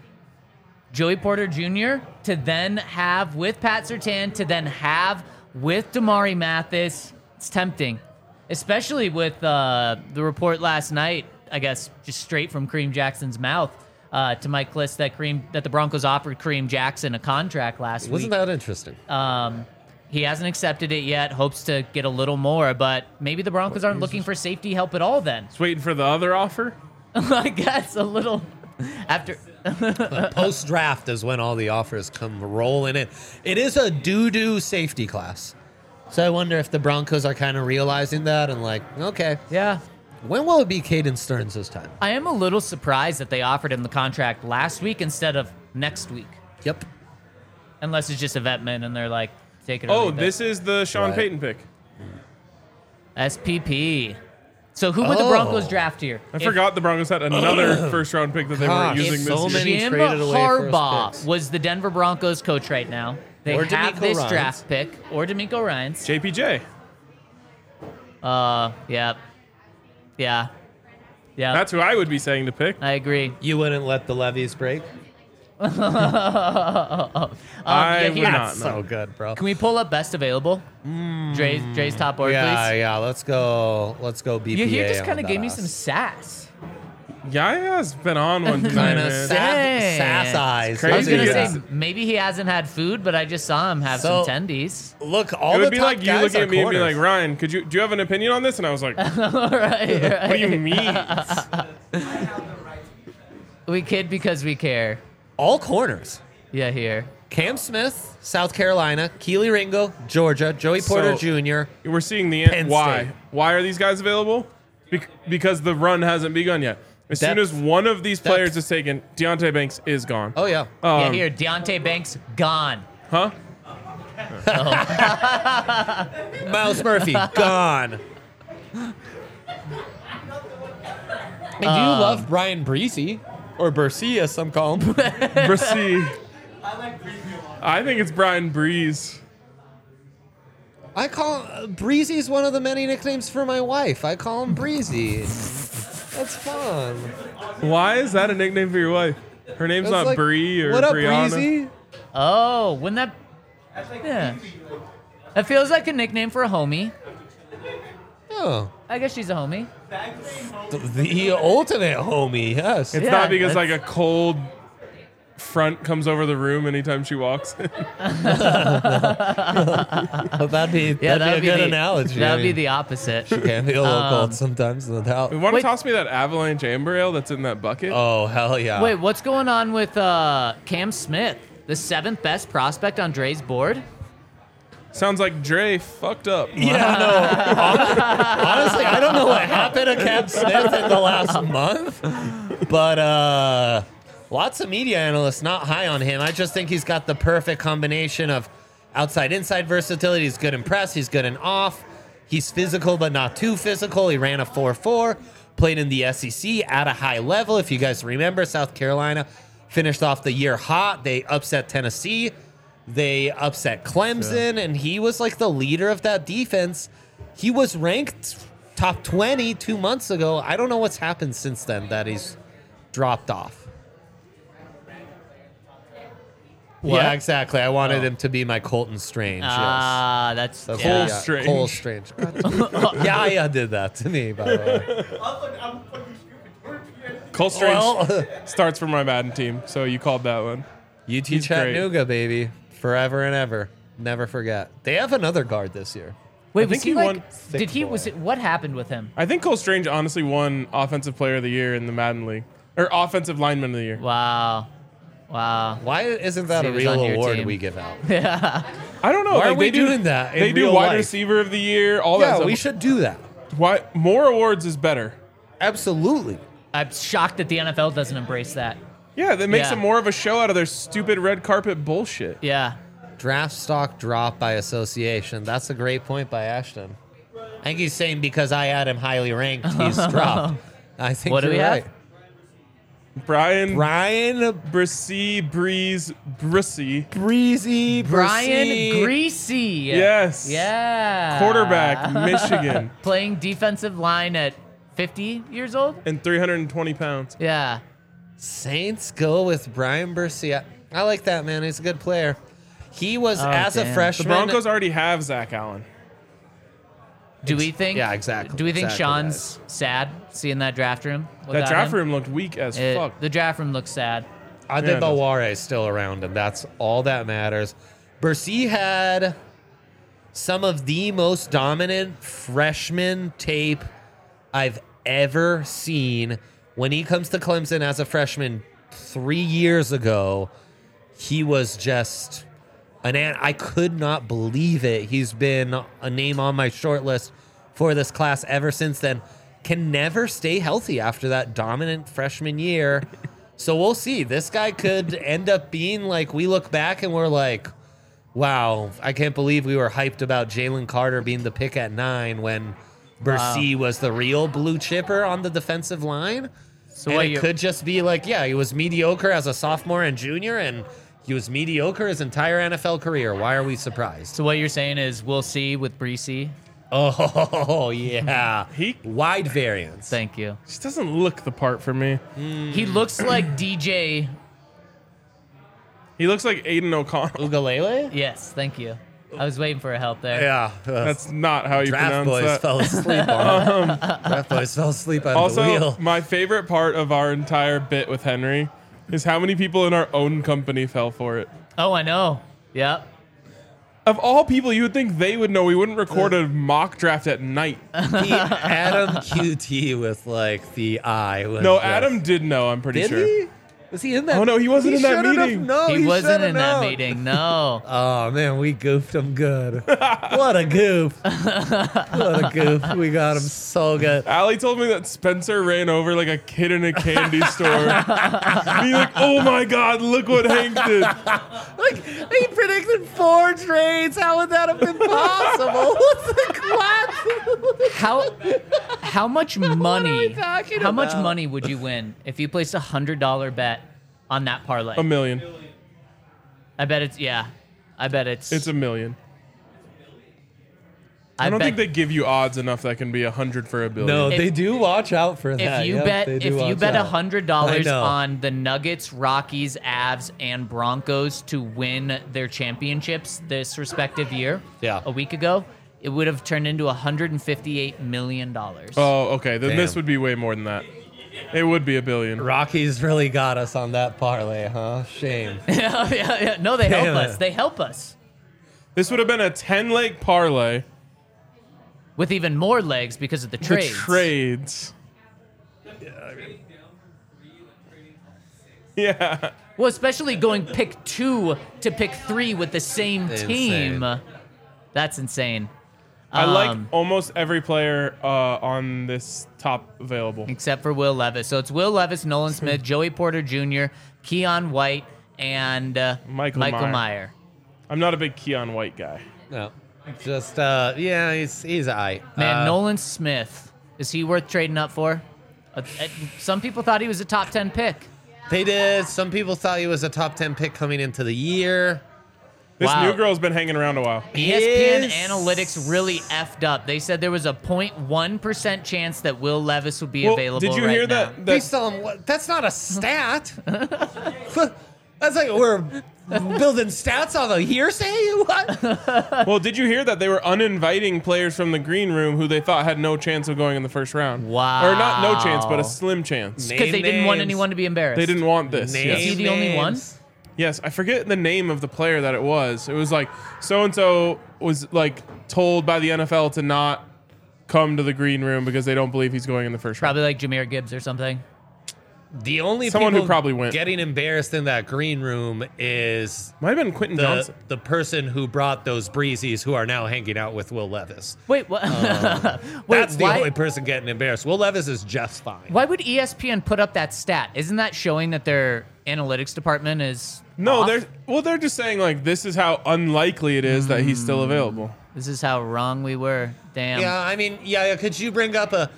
Joey Porter Jr. to then have with Pat Surtain, to then have with Damari Mathis. It's tempting, especially with the report last night, I guess, just straight from Kareem Jackson's mouth to Mike Kliss that the Broncos offered Kareem Jackson a contract last Wasn't week. that interesting? He hasn't accepted it yet, hopes to get a little more, but maybe the Broncos aren't looking for safety help at all then. Just waiting for the other offer. I guess a little after. Post draft is when all the offers come rolling in. It is a doo-doo safety class. So I wonder if the Broncos are kind of realizing that and like, okay, Yeah. when will it be Caden Stearns this time? I am a little surprised that they offered him the contract last week instead of next week. Yep. Unless it's just a vetman and they're like, take it or Oh, leave it. this is the Sean Right. Payton pick. SPP. So who would the Broncos draft here? I forgot the Broncos had another first-round pick that they Gosh, weren't using so this many year. Jim traded away first Harbaugh picks. was the Denver Broncos coach right now. They Or have DeMeco this Ryans. draft pick, or D'Amico Ryans. JPJ. Yeah. Yeah. Yeah. That's who I would be saying to pick. I agree. You wouldn't let the levees break? I yeah, would here- not. So No. good, bro. Can we pull up best available? Dre's top board, Yeah, please. yeah. Let's go BPA. You here just kind of gave me some sass. Yaya's been on one tonight, kind of man. Dang. sass eyes. Crazy. I was gonna Yeah. say maybe he hasn't had food, but I just saw him have So- some tendies. Look, all It the would be top like you guys looking are at me and be corners. like, Ryan, do you have an opinion on this? And I was like, what right. do you mean? We kid because we care. all corners. Yeah, here. Cam Smith, South Carolina, Keely Ringo, Georgia, Joey Porter So- Jr. We're seeing the Penn end. Why? State. Why are these guys available? Because the run hasn't begun yet. As soon Depth. as one of these Depth. players is taken, Deontay Banks is gone. Oh yeah. Yeah, here. Deontay Banks gone. Huh? Myles Murphy gone. And do you love Brian Breezy or Bursey, as some call him? Brissy. I think it's Brian Breeze. I call Breezy's one of the many nicknames for my wife. I call him Breezy. That's fun. Why is that a nickname for your wife? Her name's That's not like, Bree or what up, Brianna. Breezy? Oh, wouldn't that? Yeah. That feels like a nickname for a homie. Oh, I guess she's a homie. the ultimate homie. Yes. It's Yeah, not because like that's- a cold front comes over the room anytime she walks. That'd be Yeah, that'd be a good the, analogy. That I would be mean, the opposite. can be a little cold sometimes. No doubt. You want to Wait. toss me that avalanche amber ale that's in that bucket? Oh hell yeah. Wait, what's going on with Cam Smith, the 7th best prospect on Dre's board? Sounds like Dre fucked up. Yeah, no. Honestly, I don't know what happened to Cam Smith in the last month, but Lots of media analysts not high on him. I just think he's got the perfect combination of outside-inside versatility. He's good in press. He's good in off. He's physical, but not too physical. He ran a 4.4, played in the SEC at a high level. If you guys remember, South Carolina finished off the year hot. They upset Tennessee. They upset Clemson, and he was like the leader of that defense. He was ranked top 20 2 months ago. I don't know what's happened since then that he's dropped off. What? Yeah, exactly. I wanted him to be my Colton Strange. Ah, that's Yes. yeah. Strange. Cole Strange. Yeah, did that to me, by the way. I'm fucking stupid. Cole Strange Well, starts for my Madden team, so you called that one. UT He's Chattanooga, baby. Forever and ever. Never forget. They have another guard this year. Wait, I was think he he like? won- Did he? boy. Was it? What happened with him? I think Cole Strange honestly won Offensive Player of the Year in the Madden League. Or Offensive Lineman of the Year. Wow. Why isn't that He a was real on your award team. we give out? I don't know. Why are like, we they do, doing that in They do real Wide life? Receiver of the Year, all that Yeah, stuff. we should do that. Why more awards is better. Absolutely. I'm shocked that the NFL doesn't embrace that. Yeah, that makes Yeah. it more of a show out of their stupid red carpet bullshit. Yeah. Draft stock drop by association. That's a great point by Ashton. I think he's saying because I had him highly ranked, he's dropped. I think What do you're we have? right. Brian Brian Brissy. Breezy. Brian Brissy. Greasy. Yes. Yeah. Quarterback, Michigan, Playing defensive line at 50 years old? and 320 pounds. Yeah. Saints go with Brian Bercia. I like that, man. He's a good player. He was, Oh, as a damn. The freshman. Broncos already have Zach Allen. Do we think? yeah, exactly. Do we think Exactly, Sean's sad seeing that draft room? That without draft him? room looked weak as fuck. The draft room looks sad. I Yeah, think it does. Balware is still around, and that's all that matters. Bercy had some of the most dominant freshman tape I've ever seen. When he comes to Clemson as a freshman 3 years ago, he was just I could not believe it. He's been a name on my short list for this class ever since then. Can never stay healthy after that dominant freshman year. So we'll see. This guy could end up being like, we look back and we're like, wow, I can't believe we were hyped about Jalen Carter being the pick at 9 when Bercy was the real blue chipper on the defensive line. So And what it you- could just be like, yeah, he was mediocre as a sophomore and junior, and he was mediocre his entire NFL career. Why are we surprised? So what you're saying is we'll see with Breesy. Oh, yeah. He Wide variance. Thank you. just doesn't look the part for me. He looks like DJ. He looks like Aiden O'Connell. Ugalele? Yes, thank you. I was waiting for a help there. Yeah. That's not how you Draft pronounce Boys that. fell asleep on it. Draft Boys fell asleep on the Also, wheel. my favorite part of our entire bit with Henry is how many people in our own company fell for it. Oh, I know. Yep. Of all people, you would think they would know. We wouldn't record a mock draft at night. Adam QT with like the eye. Was No, just- Adam did know, I'm pretty Did sure. he? Was he in that? Oh, no, he wasn't in that should've meeting. known. he wasn't should've in that known. meeting. No. Oh man, we goofed him good. What a goof! What a goof! We got him so good. Allie told me that Spencer ran over like a kid in a candy store. And he's like, oh my God, look what Hank did. Like he predicted 4 trades. How would that have been possible? What's the class? How much money? talking How much about? money would you win if you placed $100 bet on that parlay? $1 million. I bet it's I bet it's. It's $1 million. I don't bet think they give you odds enough that can be 100 for $1 billion. No, If- they do watch out for If that. you Yep, bet they if do you watch bet out. $100 I know. on the Nuggets, Rockies, Avs, and Broncos to win their championships this respective year, Yeah. a week ago, it would have turned into $158 million. Oh, okay. Then this Damn. would be way more than that. It would be $1 billion. Rockies really got us on that parlay, huh? Shame. yeah. No, they help Damn us. it. They help us This would have been a 10-leg parlay. with even more legs because of the The trades. trades. Yeah. Well, especially going pick 2 to pick 3 with the same Insane. team. That's insane. I like almost every player on this top available. Except for Will Levis. So it's Will Levis, Nolan Smith, Joey Porter Jr., Keon White, and Michael Meyer. I'm not a big Keon White guy. No. Just, he's all right. Man, Nolan Smith, is he worth trading up for? Some people thought he was a top 10 pick. They did. Some people thought he was a top 10 pick coming into the year. This Wow. new girl's been hanging around a while. ESPN Analytics really effed up. They said there was a 0.1% chance that Will Levis would be available. Did you right hear now. Based on what? That's not a stat. That's like we're building stats on a hearsay? What? Well, did you hear that they were uninviting players from the green room who they thought had no chance of going in the first round? Wow. Or not no chance, but a slim chance. Because they didn't want anyone to be embarrassed. They didn't want this. Name Is he the only one? names. Yes, I forget the name of the player that it was. It was like so-and-so was like told by the NFL to not come to the green room because they don't believe he's going in the first round. Probably like Jahmyr Gibbs or something. The only Someone people who probably went. getting embarrassed in that green room is Might have been Quentin Johnson. the person who brought those breezies who are now hanging out with Will Levis. Wait, what? That's the why, only person getting embarrassed. Will Levis is just fine. why would ESPN put up that stat? Isn't that showing that their analytics department is No, off? they're just saying like this is how unlikely it is that he's still available. This is how wrong we were. Damn. Yeah, I mean, could you bring up a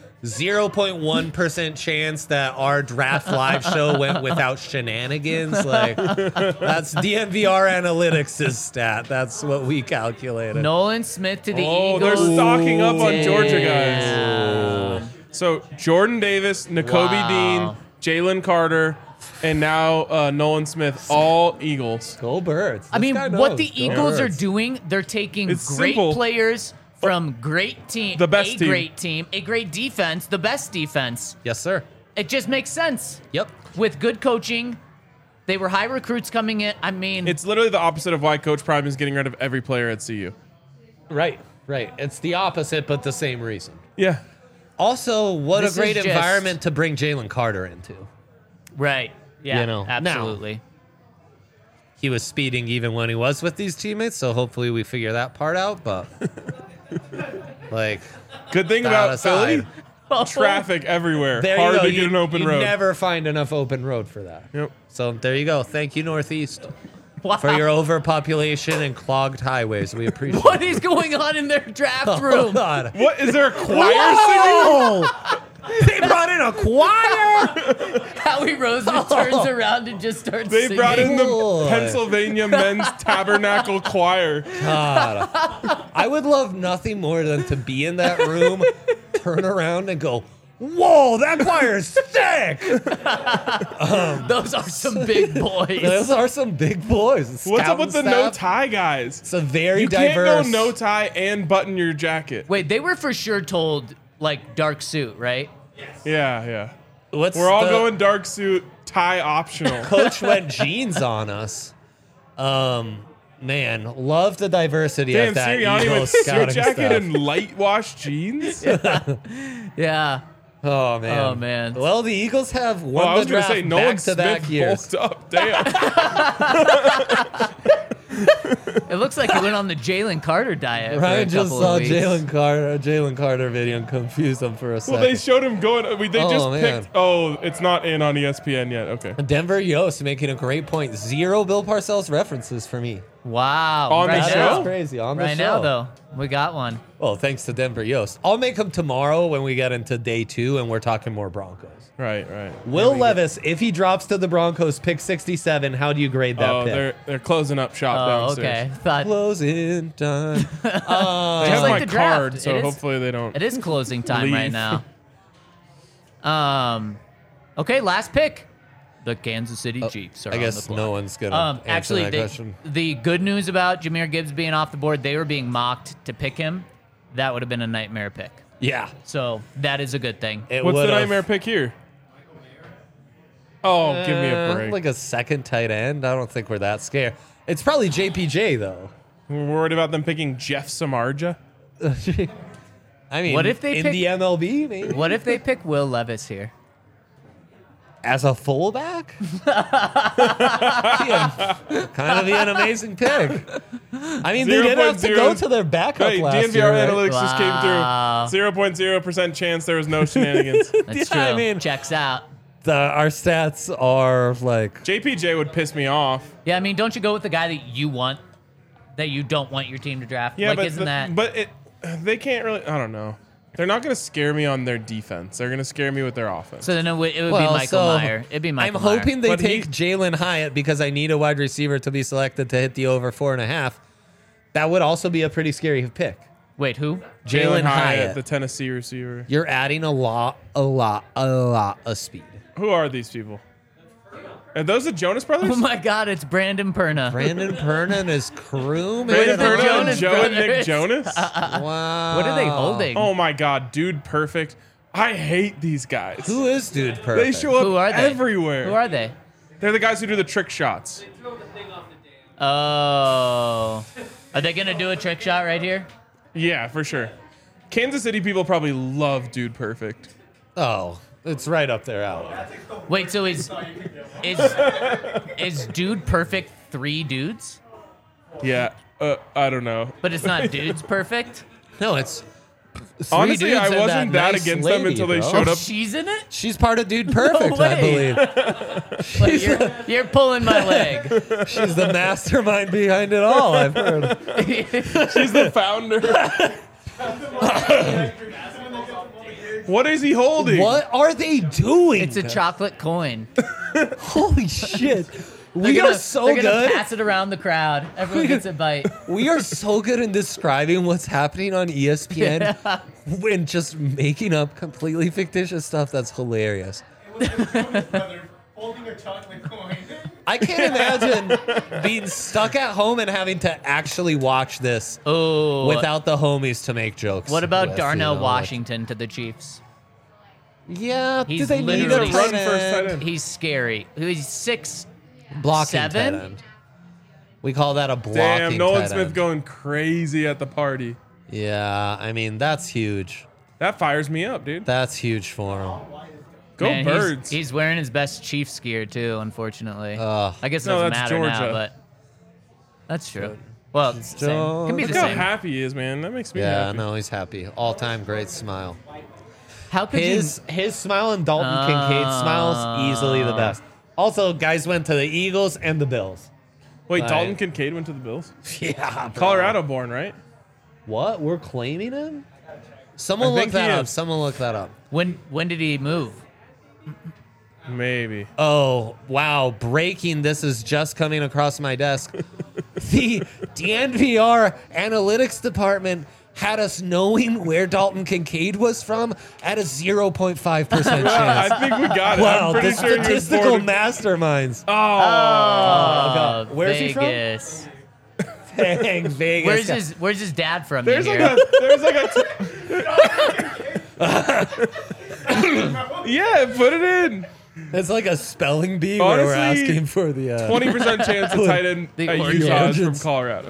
0.1% chance that our draft live show went without shenanigans? Like, that's DNVR Analytics' stat. That's what we calculated. Nolan Smith to the Oh, Eagles. they're stocking up on Georgia Damn. guys. So Jordan Davis, Nakobe Wow. Dean, Jalen Carter, and now Nolan Smith, all Eagles. Go Birds. I This mean, guy what knows. the Go Eagles are Birds. doing, they're taking It's great simple. players from great team, The best team. great team, a great defense, the best defense. Yes, sir. It just makes sense. Yep. With good coaching, they were high recruits coming in. I mean, It's literally the opposite of why Coach Prime is getting rid of every player at CU. Right. It's the opposite, but the same reason. Yeah. Also, what This a great is just- environment to bring Jalen Carter into. right. Yeah, You know, now- absolutely. He was speeding even when he was with these teammates, so hopefully we figure that part out. But like, Good thing that about aside, Philly, traffic everywhere. there Hard you go. to get an open you road. never find enough open road for that. Yep. So there you go. Thank you, Northeast, Wow. for your overpopulation and clogged highways. We appreciate What is going on in their draft room? Oh, God. What is there a choir singing? Oh! They brought in a choir. Howie Roseman turns around and just starts They singing. brought in the Boy. Pennsylvania Men's Tabernacle Choir. God, I would love nothing more than to be in that room, turn around, and go, "Whoa, that choir's sick!" Those are some big boys. Those are some big boys. What's up with the no Scout tie guys? It's a very You diverse. can't go no tie and button your jacket. Wait, they were for sure told like dark suit, right? Yeah. What's We're all the- going dark suit, tie optional. Coach went jeans on us. Man, love the diversity Damn, of that Sirianni Eagles with suit scouting jacket staff. and light wash jeans? Yeah. Oh man. Oh, man. Well, the Eagles have won Well, I was the going to draft say, Nolan back-to-back Smith years. bulked up. Damn. It looks like he went on the Jalen Carter diet for a Ryan just couple saw of weeks. Jalen Carter video and confused him for a Well, second. they showed him going. They Oh, just man. picked. Oh, it's not in on ESPN yet. Okay. Denver Yost making a great point. 0 Bill Parcells references for me. Wow. On the right show? now. That's crazy. On the Right show. now, though, we got one. Well, thanks to Denver Yost. I'll make them tomorrow when we get into day 2 and we're talking more Broncos. Right. Will Levis, if he drops to the Broncos, pick 67, how do you grade that Oh, pick? they're closing up shop Oh, downstairs. okay. Thought Closing time. They Just have like my the draft. card, so It is- hopefully they don't. it is closing time right Leave. now. Okay, last pick. The Kansas City Chiefs are I on guess the block. no one's going to answer Actually, that question. the good news about Jahmyr Gibbs being off the board, they were being mocked to pick him. That would have been a nightmare pick. Yeah. So that is a good thing. It What's the would've- nightmare pick here? Oh, give me a break. Like a second tight end. I don't think we're that scared. It's probably JPJ, though. We're worried about them picking Jeff Samardzija. I mean, What if they in pick- the MLB, maybe? What if they pick Will Levis here? as a fullback, kind of be an amazing pick. I mean, they did have to go to their backup Right, last DNVR year, right? analytics just came through. 0.0% chance there was no shenanigans. That's Yeah, true. I mean- Checks out. Our stats are like, JPJ would piss me off. Yeah, I mean, don't you go with the guy that you want, that you don't want your team to draft? Yeah, like, but isn't that? they can't really. I don't know. They're not going to scare me on their defense. They're going to scare me with their offense. So then it would be well, Michael so Meyer. It'd be Michael I'm Meyer. hoping they But take Jalen Hyatt because I need a wide receiver to be selected to hit the over 4.5. That would also be a pretty scary pick. Wait, who? Jalen Hyatt. the Tennessee receiver. You're adding a lot of speed. Who are these people? Are those the Jonas Brothers? Oh my God, it's Brandon Perna. Brandon Perna and his crew, Brandon man. the Perna Jonas and Joe and Nick Brothers. Jonas? Wow. What are they holding? Oh my God, dude, perfect. I hate these guys. Who is dude perfect? They show up Who are they? everywhere. Who are they? They're the guys who do the trick shots. Oh. Are they going to do a trick shot right here? Yeah, for sure. Kansas City people probably love Dude Perfect. Oh, it's right up their alley. Wait, so is Dude Perfect 3 dudes? Yeah, I don't know. But it's not Dudes Perfect? No, it's three Honestly, dudes I and wasn't that nice against them lady, until they bro. showed Oh, up. she's in it? She's part of Dude Perfect, I way. believe. Like, you're pulling my leg. She's the mastermind behind it all, I've heard. She's the founder. What is he holding? What are they doing? It's a chocolate coin. Holy shit. They're We gonna, are so they're gonna good. pass it around the crowd. Everyone gets a bite. We are so good in describing what's happening on ESPN and just making up completely fictitious stuff that's hilarious. Holding a chocolate coin. I can't imagine being stuck at home and having to actually watch this Oh. without the homies to make jokes. What about with, Darnell you know, Washington to the Chiefs? Yeah, do He's they need a literally- tight Run first tight end? end. He's scary. He's 6. Blocking 7? tight end. We call that a blocking Damn, Nolan tight Smith end. going crazy at the party. Yeah, I mean, that's huge. That fires me up, dude. That's huge for him. Go Man, Birds. He's wearing his best Chiefs gear too, unfortunately. Ugh. I guess it No, doesn't that's matter now, Georgia. but that's true. Well, it's the same. Can be the Look how same. happy he is, man. That makes me Yeah, happy. no, he's happy. All-time great smile. How could His smile and Dalton Kincaid's smile is easily the best. Also, guys went to the Eagles and the Bills. Wait, Right. Dalton Kincaid went to the Bills? Yeah, bro. Colorado born, right? What? We're claiming him? Someone I look think that he up. is. Someone look that up. when did he move? Maybe. Oh, wow. Breaking. This is just coming across my desk. The DNVR analytics department had us knowing where Dalton Kincaid was from at a 0.5% chance. I think we got it. Wow, I'm pretty the sure he was statistical born. masterminds. Oh, Oh, Where's he from? Vegas. Dang, Vegas. Where's his dad from? there's like here? yeah, put it in. It's like a spelling bee where we're Honestly, asking for the 20% chance a tight end The at Utah is from origins. Colorado.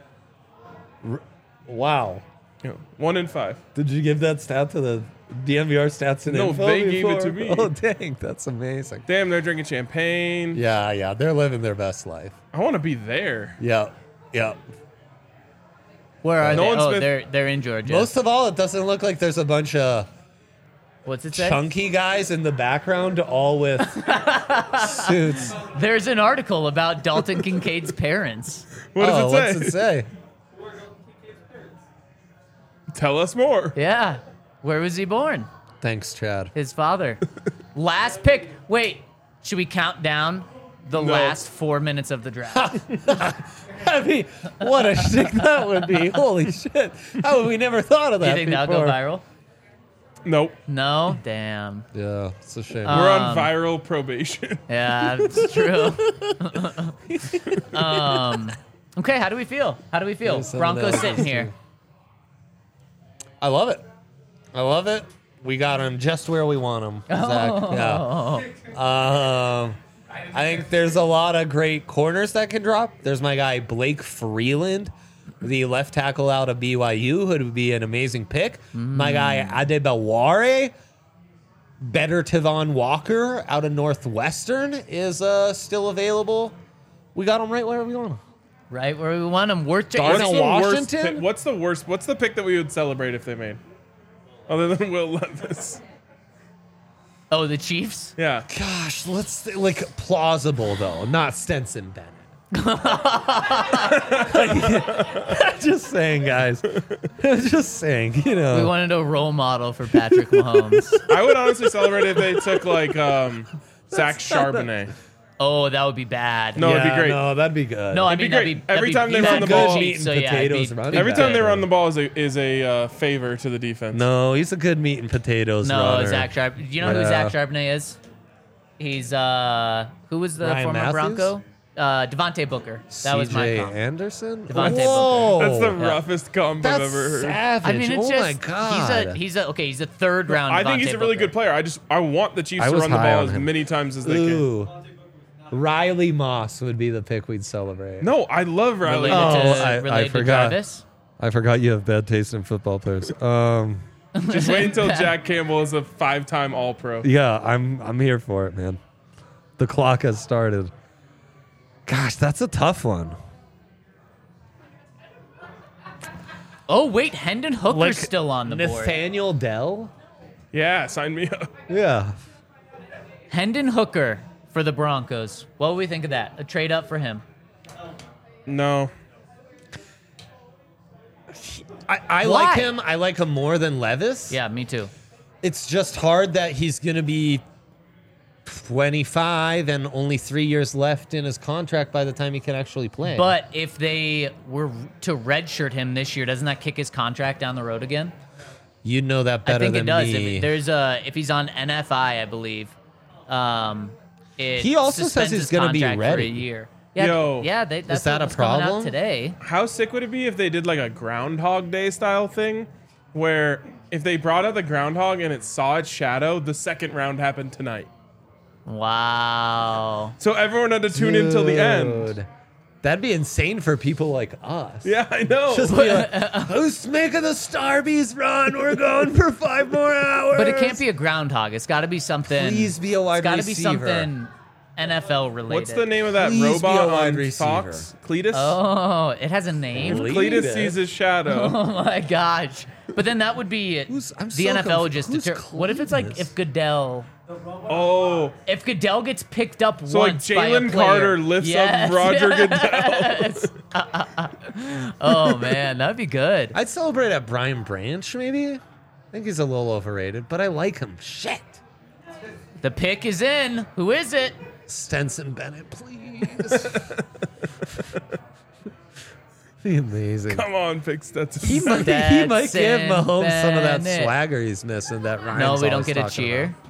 Wow. 1 in 5. Did you give that stat to the DMVR stats and No, info they gave it before? to me. Oh, dang. That's amazing. Damn, they're drinking champagne. Yeah. They're living their best life. I want to be there. Yep. Where are Nolan they? Oh, Smith- they're in Georgia. Most of all, it doesn't look like there's a bunch of What's it say? chunky guys in the background, all with suits. There's an article about Dalton Kincaid's parents. What does it say? What's it say? Tell us more. Yeah. Where was he born? Thanks, Chad. His father. Last pick. Wait, should we count down the No. last 4 minutes of the draft? I mean, what a shtick that would be. Holy shit. How would we never thought of Do that you think before? that'll go viral? Nope. No? Damn. Yeah, it's a shame. We're on viral probation. Yeah, it's true. Okay, how do we feel? Yeah, some of Broncos that sitting is here. true. I love it. We got him just where we want him, Zach. Yeah. I think there's a lot of great corners that can drop. There's my guy Blake Freeland, the left tackle out of BYU, who would be an amazing pick. My guy Adebaware, Better Tavon Walker out of Northwestern is still available. We got him right where we want him. Right where we want him. Darnell Washington? What's the worst? What's the pick that we would celebrate if they made? Other than Will Levis. Oh, the Chiefs? Yeah. Gosh, let's plausible though, not Stenson Bennett. Just saying, guys. Just saying, We wanted a role model for Patrick Mahomes. I would honestly celebrate if they took Zach Charbonnet. Oh, that would be bad. No, it'd be great. No, that'd be good. No, I It'd be mean, great. Every time they run the ball, meat and potatoes running Every back. time they run the ball is a favor to the defense. No, he's a good meat and potatoes No, runner. Zach Charbonnet. Do you know who Zach Charbonnet is? He's who was the Ryan former Matthews? Bronco? Devontae Booker. That was my CJ comp. Anderson? Devontae Whoa. That's the Yeah. roughest comp That's I've ever heard. savage. I mean, it's oh just my God. he's a third round. I think Devontae he's a really Booker. good player. I want the Chiefs I to was run the high ball on as him. many times as they can. Ooh. Riley Moss would be the pick we'd celebrate. No, I love Riley. Related to forgot. Travis. I forgot you have bad taste in football players. Just wait until Jack Campbell is a 5-time All-Pro. Yeah, I'm here for it, man. The clock has started. Gosh, that's a tough one. Oh wait, Hendon Hooker's still on the board. Nathaniel Dell? Yeah, sign me up. Yeah. Hendon Hooker for the Broncos. What do we think of that? A trade up for him? No. I Why? like him. I like him more than Levis. Yeah, me too. It's just hard that he's going to be 25 and only 3 years left in his contract by the time he can actually play. But if they were to redshirt him this year, doesn't that kick his contract down the road again? you know that better I think than it does. me. If he's on NFI, I believe. He also says suspends he's his going to be contract for ready. a year. Yeah, Yo. yeah. That's that a what's coming problem? out today? How sick would it be if they did like a Groundhog Day style thing where if they brought out the groundhog and it saw its shadow, the second round happened tonight? Wow. So everyone had to tune in till the end. Dude. That'd be insane for people like us. Yeah, I know. Just be like, who's making the Starbies run? We're going for 5 more hours. But it can't be a groundhog. It's got to be something. Please be a wide It's got to be receiver. something NFL related. What's the name of that Please be robot a wide on receiver. Fox? Cletus? Oh, it has a name. Cletus sees his shadow. Oh my gosh! But then that would be I'm the so NFL would just who's deter. What if it's like Cletus? if Goodell Oh, gets picked up so like once by a Jalen player. Carter lifts Yes. up Roger Goodell. Yes. Oh man, that'd be good. I'd celebrate at Brian Branch, maybe. I think he's a little overrated, but I like him. Shit. The pick is in. Who is it? Stenson Bennett, please. Be amazing. Come on, pick Stetson. He might give Stetson Mahomes some of that Bennett. swagger he's missing. That Ryan's No, we don't always get a talking cheer. about.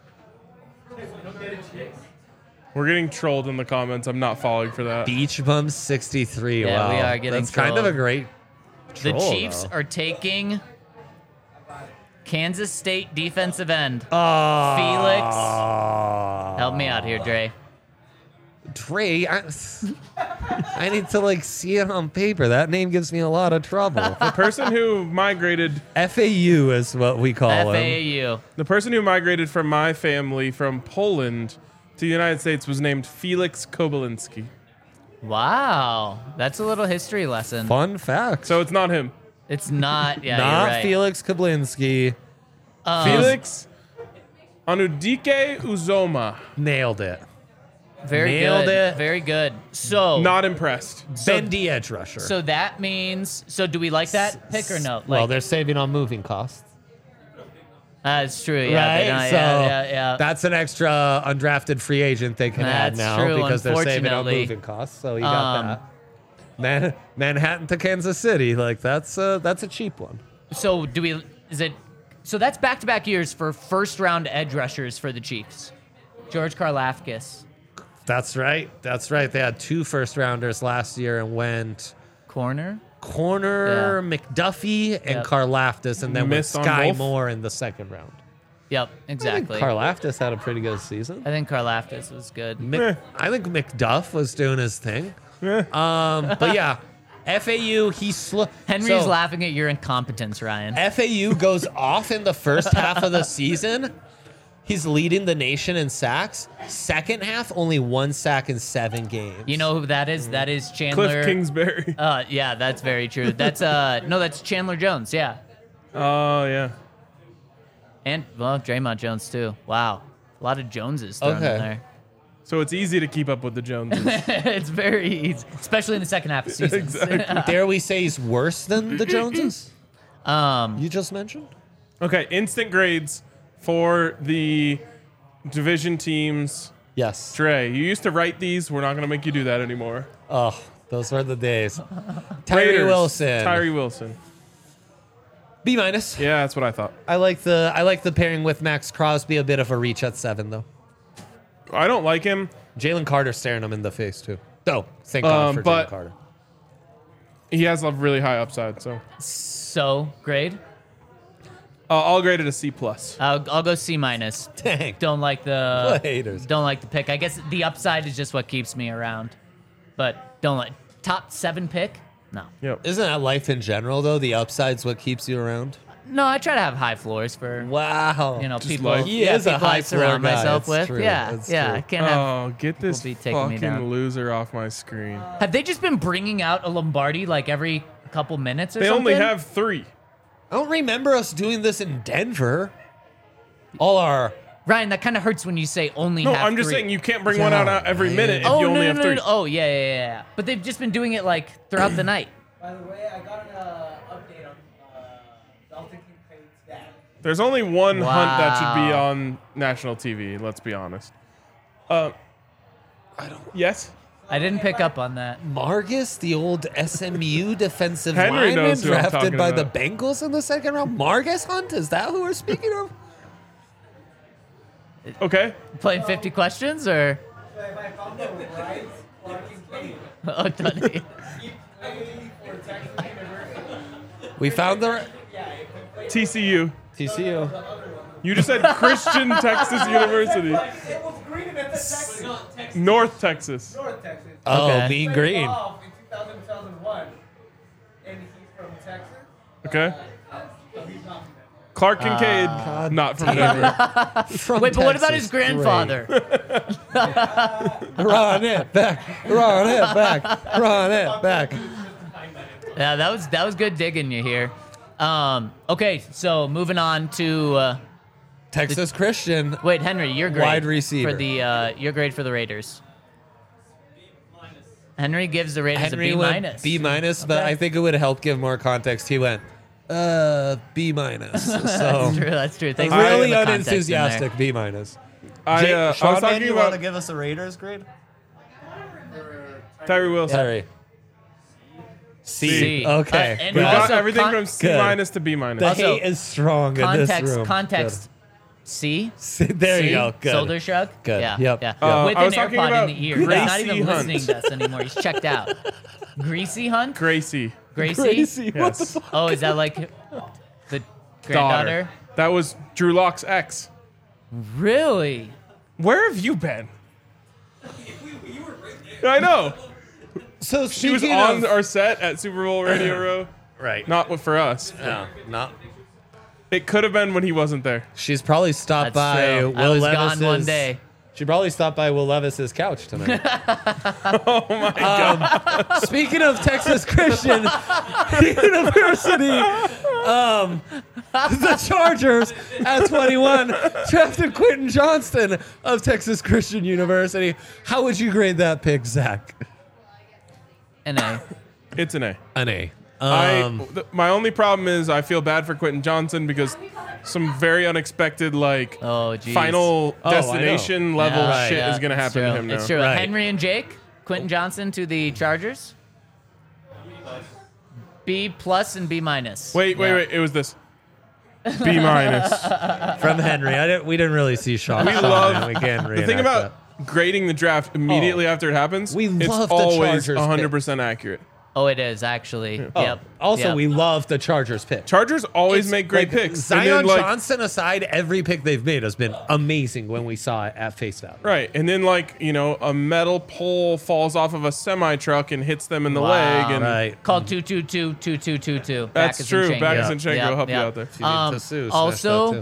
We're getting trolled in the comments. I'm not falling for that. Beach Bum 63. Yeah, wow, we are getting that's kind of a trolled. great. The troll, Chiefs though. are taking Kansas State defensive end. Oh, Felix. Help me out here, Dre. Dre, I need to see it on paper. That name gives me a lot of trouble. The person who migrated, FAU is what we call him. FAU. the person who migrated from my family from Poland to the United States was named Felix Kobylinski. Wow, that's a little history lesson. Fun fact. So it's not him. It's not. Yeah, Not you're right. Felix Kablinski. Felix Anudike Uzoma. Nailed it. Very Nailed good. it. Very good. So, Not impressed. Bendy edge rusher. so that means. So do we like that pick or no? well, they're saving on moving costs. That's true. Yeah, Right? they don't- So yeah. that's an extra undrafted free agent they can add That's now true, because they're saving on unfortunately. moving costs. So you got that. Manhattan to Kansas City, that's a cheap one. So do we? Is it? So that's back-to-back years for first-round edge rushers for the Chiefs. George Karlaftis, That's right. That's right. They had 2 first rounders last year and went corner. Corner McDuffie and Yep. Karlaftis, and then went Missed on Sky both? Moore in the second round. Yep, I think exactly. Karlaftis had a pretty good season. I think Karlaftis was good. I think McDuff was doing his thing. But yeah, FAU, Henry's laughing at your incompetence, Ryan. FAU goes off in the first half of the season. He's leading the nation in sacks. Second half, only 1 sack in 7 games. You know who that is? That is Chandler. Cliff Kingsbury. Yeah, that's very true. That's no, that's Chandler Jones. Yeah, Oh, yeah. and well, Draymond Jones too. Wow, a lot of Joneses thrown in Okay. there. So it's easy to keep up with the Joneses. It's very easy, especially in the second half of seasons. Dare we say he's worse than the Joneses? Um, You just mentioned? Okay, instant grades for the division teams. Yes. Trey, you used to write these. We're not going to make you do that anymore. Oh, those were the days. Tyree Raiders, Wilson. Tyree Wilson. B minus. Yeah, that's what I thought. I like the pairing with Max Crosby. A bit of a reach at 7 though. I don't like him. Jalen Carter staring him in the face too. Oh, thank God for but- Jalen Carter. He has a really high upside, so so grade. I'll grade it a C+. I'll go C minus. Dang. Don't like What the haters. don't like the pick. I guess the upside is just what keeps me around, but don't like top 7 pick. No, Yep. Isn't that life in general though? The upside's what keeps you around. no. I try to have high floors for Wow. Just people. life. He is a people I high floor surround guy, myself it's with. true, Yeah, it's yeah. true. I can't have. Oh, get this be taking me down. fucking loser off my screen. Have they just been bringing out a Lombardi like every couple minutes or They something? only have 3. I don't remember us doing this in Denver. All our Ryan, that kind of hurts when you say only No, have I'm just 3. saying you can't bring one out every man. minute if Oh, you no, only no, have no, 3. no. Oh, yeah. But they've just been doing it like throughout the night. By the way, I got an update on Dalton Kincaid stat. There's only one hunt that should be Wow. on national TV, let's be honest. I don't. Yes? I didn't pick up on that. Margus, the old SMU defensive Henry lineman knows who I'm drafted talking by about. the Bengals in the second round. Margus Hunt? Is that who we're speaking of? Okay. Playing 50 questions or? So if I found the right Clark Kincaid, Oh, Dunny. he played for Texas University. We found the Yeah, if he played TCU. TCU. You just said Christian Texas University. it was green and it's Texas. North Texas. North Texas. Oh, Okay. Mean Played Green. golf in 2000, 2001. And he's from Texas. Okay. So he's not from there. Clark Kincaid, not from Denver. From Wait, but what about Texas. his grandfather? Great. Run it back. Run it back. Run it back. Yeah, that was good digging you here. Okay, so moving on to Texas Christian. wait, Henry, your grade Wide receiver. for the your grade for the Raiders. Henry gives the Raiders Henry a B went minus. B minus, but I think it would help give more context. He went B minus. So That's true. Thanks for really putting the context in there. unenthusiastic B minus. I was Sean, talking you want to about give us a Raiders grade? Tyree Wilson. Sorry. C. C. Okay. And We good. got also everything con- from C Good. minus to B minus. The Also, hate is strong in this Context, room. context. C. Good. There C? you go. Good. Shoulder shrug. Good. Yeah. Yep. Yeah. Yep. With I was an talking AirPod about in the ear. He's not even Gracie Hunt. listening to us anymore. He's checked out. Greasy Hunt. Gracie. Gracie. Crazy. What the Yes. fuck? Oh, is that like the granddaughter? Daughter. That was Drew Locke's ex. Really? Where have you been? I know. So She was speaking on of, our set at Super Bowl Radio Row. right. Not for us. No, not. It could have been when he wasn't there. She's probably stopped That's by true. Will I was Levis's. gone one day. She probably stopped by Will Levis's couch tonight. Oh my God. Speaking of Texas Christian University, the Chargers at 21 drafted Quentin Johnston of Texas Christian University. How would you grade that pick, Zach? An A. It's an A. An A. My only problem is I feel bad for Quentin Johnson because some very unexpected Oh, geez. final Oh, I know. destination level Yeah, shit yeah, is going to it's happen to true. him now. It's true. Right. Henry and Jake, Quentin Johnson to the Chargers. B plus and B minus. Wait. It was this. B minus. From Henry. We didn't really see Sean. We Sean, love and we can't the thing reenact about grading the draft immediately after it happens. We it's love the always Chargers 100% accurate. Oh, it is actually. that. Yep. Also, Yep. we love the Chargers pick. Chargers always It's make great like, picks. Zion and then, Johnson aside, every pick they've made has been amazing when we saw it at face value. Right, and then a metal pole falls off of a semi truck and hits them in the Wow. leg, and Right. Called 222-2222. that's true. Backus and Shenko help you out there. If you need to sue, smash that Also, too.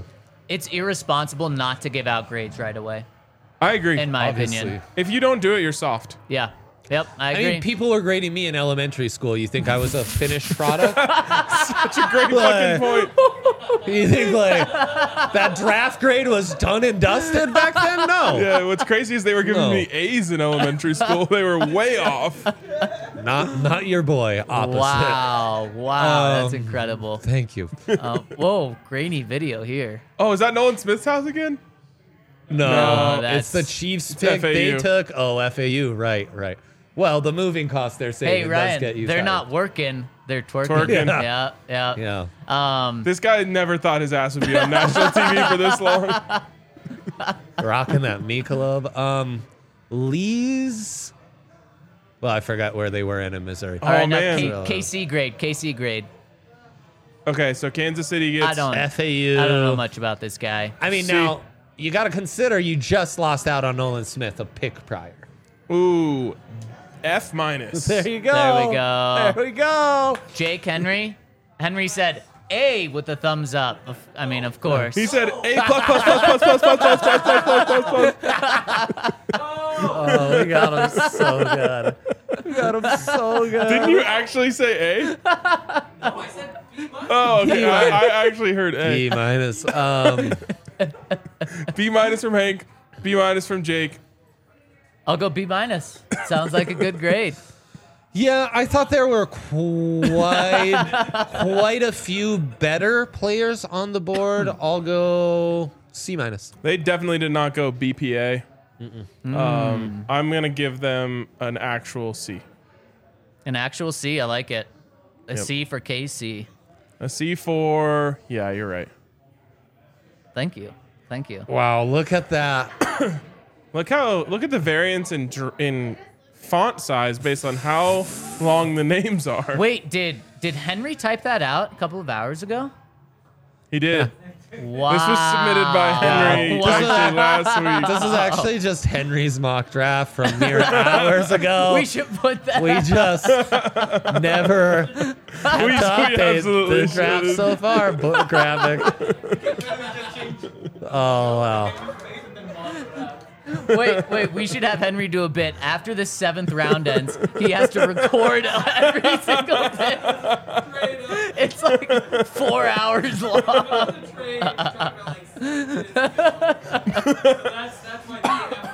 it's irresponsible not to give out grades right away, I agree. in my Obviously. opinion. If you don't do it, you're soft. Yeah. Yep, I I agree. mean, people were grading me in elementary school. You think I was a finished product? Such a great fucking point. You think like that draft grade was done and dusted back then? No, Yeah, what's crazy is they were giving No. me A's in elementary school. They were way off. not your boy. Opposite. Wow, that's incredible. Thank you. Whoa, grainy video here. Oh, is that Nolan Smith's house again? No, that's- it's the Chiefs pick FAU. they took. Oh, FAU, right. Well, the moving cost they're Hey, saving does get Ryan, you they're tired. not working. They're twerking. Twerking. Yeah. Yeah, This guy never thought his ass would be on national TV for this long. rocking that Michelob. Lee's. Well, I forgot where they were in Missouri. All right, now man. KC grade. Okay, so Kansas City gets. I don't FAU. know much about this guy. I mean, See- now you got to consider you just lost out on Nolan Smith, a pick prior. Ooh, F minus. There you go. There we go. There we go. Jake Henry. Henry said A with a thumbs up. Of course. He said A plus plus plus plus plus plus plus plus plus plus plus plus. Oh, we got him so good. We got him so good. Didn't you actually say A? No, I said B minus. Oh, okay. B I actually heard A. B minus. B minus from Hank. B minus from Jake. I'll go B minus. Sounds like a good grade. Yeah, I thought there were quite a few better players on the board. I'll go C minus. They definitely did not go BPA. I'm gonna give them an actual C. An actual C. I like it. A Yep. C for KC. A C for yeah, you're right. Thank you. Wow, look at that. Look at the variance in font size based on how long the names are. Wait, did Henry type that out a couple of hours ago? He did. Wow. This was submitted by Henry Wow. actually last week. This is actually just Henry's mock draft from mere hours ago. We should put that. We just never had We to update absolutely the draft should. so far. Book graphic. Oh, wow. Wait. We should have Henry do a bit. After the 7th round ends, he has to record every single bit. It's like 4 hours long. Trade for like 6 minutes. That's my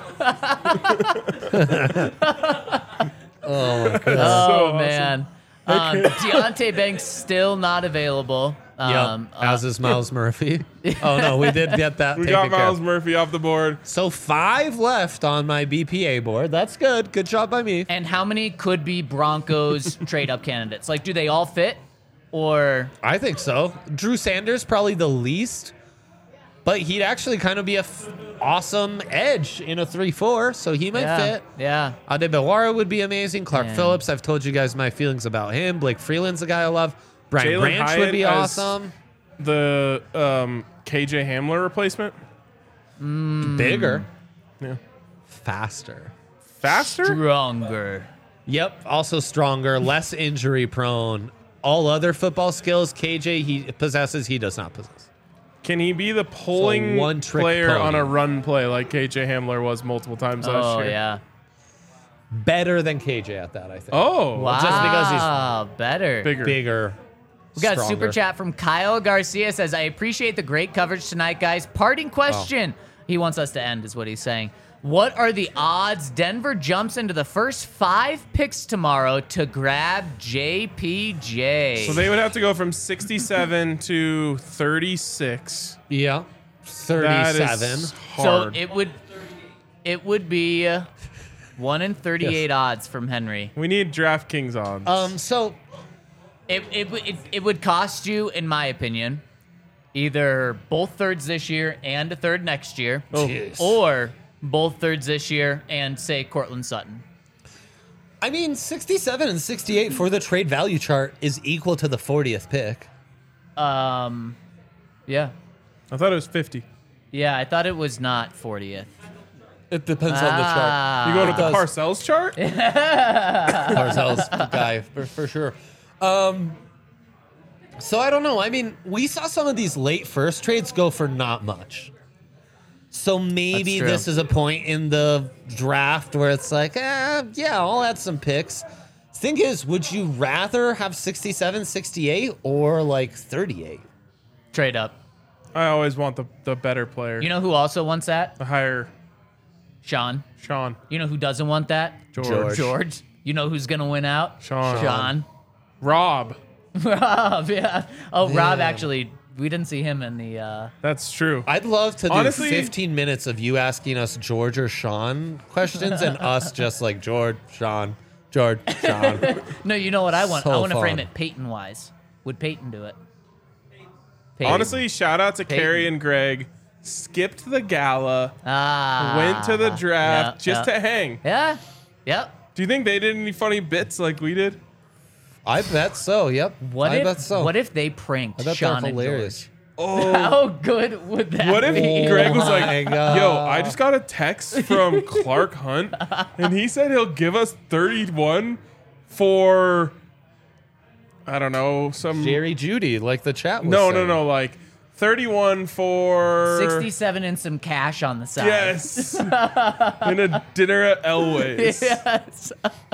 DM. Oh, my God. Oh, awesome. man. Deontay Banks still not available. As is Miles Murphy. Oh, no, we did get that We taken got care Miles of. Murphy off the board. So 5 left on my BPA board. That's good. Good job by me. And how many could be Broncos trade-up candidates? Like, do they all fit? Or I think so. Drew Sanders, probably the least. But he'd actually kind of be a awesome edge in a 3-4, so he might fit. Yeah. Adebayor would be amazing. Clark Man. Phillips, I've told you guys my feelings about him. Blake Freeland's a guy I love. Brian Jalen Branch Hyatt would be as- awesome. The KJ Hamler replacement. Bigger. Yeah. Faster. Faster? Stronger. Yep. Also stronger, less injury prone. All other football skills KJ he possesses, he does not possess. Can he be the pulling one-trick player pony. on a run play like KJ Hamler was multiple times last Oh, year? yeah. Better than KJ at that, I think. Oh, Wow. Just because better. bigger. bigger. We got a stronger. super chat from Kyle Garcia says, I appreciate the great coverage tonight, guys. Parting question. He wants us to end, is what he's saying. What are the odds Denver jumps into the first 5 picks tomorrow to grab JPJ? So they would have to go from 67 to 36. Yeah. That 37. is So hard. it would be 1 in 38 odds from Henry. We need DraftKings odds. So It would cost you, in my opinion, either both thirds this year and a third next year, Jeez. or both thirds this year and, say, Cortland Sutton. I mean, 67 and 68 for the trade value chart is equal to the 40th pick. Yeah. I thought it was 50. Yeah, I thought it was not 40th. It depends on the chart. You going with the does. Parcells chart? Parcells guy for sure. So I don't know. I mean, we saw some of these late first trades go for not much. So maybe this is a point in the draft where it's like, yeah, I'll add some picks. Thing is, would you rather have 67, 68 or like 38? Trade up. I always want the better player. You know who also wants that? The higher Sean. Sean. You know who doesn't want that? George. You know who's going to win out? Sean. Rob. Rob, yeah. Oh, yeah. Rob, actually, we didn't see him in the... That's true. I'd love to do Honestly, 15 minutes of you asking us George or Sean questions and us just like George, Sean. No, you know what I want? So I want to frame fun. it Peyton-wise. Would Peyton do it? Honestly, shout out to Carrie and Greg. Skipped the gala. Went to the draft just to hang. Yeah. Yep. Do you think they did any funny bits like we did? I bet so. Yep. I bet so. What if they pranked I bet Sean they're and hilarious. George? Oh. How good would that What if be? Greg was my like, God. yo, I just got a text from Clark Hunt, and he said he'll give us 31 for, I don't know, some... Jerry Judy, like the chat was No, saying. like 31 for... 67 and some cash on the side. Yes. In a dinner at Elway's. Yes.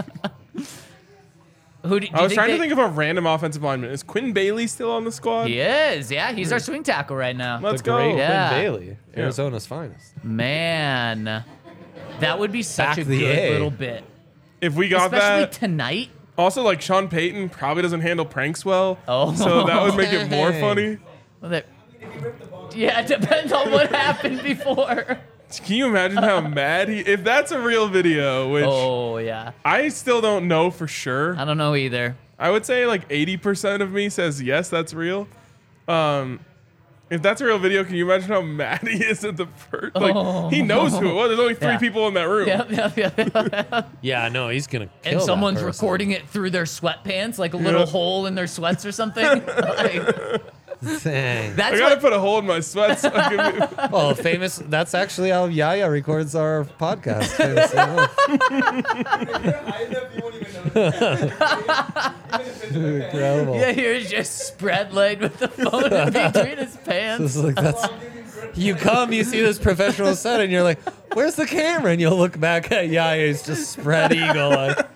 Who do I was trying to they- think of a random offensive lineman. Is Quinn Bailey still on the squad? He is. Yeah, he's our swing tackle right now. Let's The great go. Yeah. Quinn Bailey, Arizona's finest. Man, that would be such Back a the good A. little bit. If we got Especially that... tonight. Also, like, Sean Payton probably doesn't handle pranks well. Oh. So that would make it more funny. Well, yeah, it depends on what happened before. Can you imagine how mad he... If that's a real video, which Oh, yeah. I still don't know for sure. I don't know either. I would say like 80% of me says yes, that's real. If that's a real video, can you imagine how mad he is at the first? Like, he knows who it was. There's only three Yeah. people in that room. Yep. Yeah, no, he's gonna kill And that someone's person. recording it through their sweatpants, like a little hole in their sweats or something. Like, Dang. I that's gotta what. put a hole in my sweats. So I can Oh, famous. That's actually how Yaya records our podcast. Incredible. Yeah, here's just spread laid with the phone in between his pants. It's like that's. You come, you see this professional set, and you're like, "Where's the camera?" And you'll look back at Yaya's just spread eagle, like,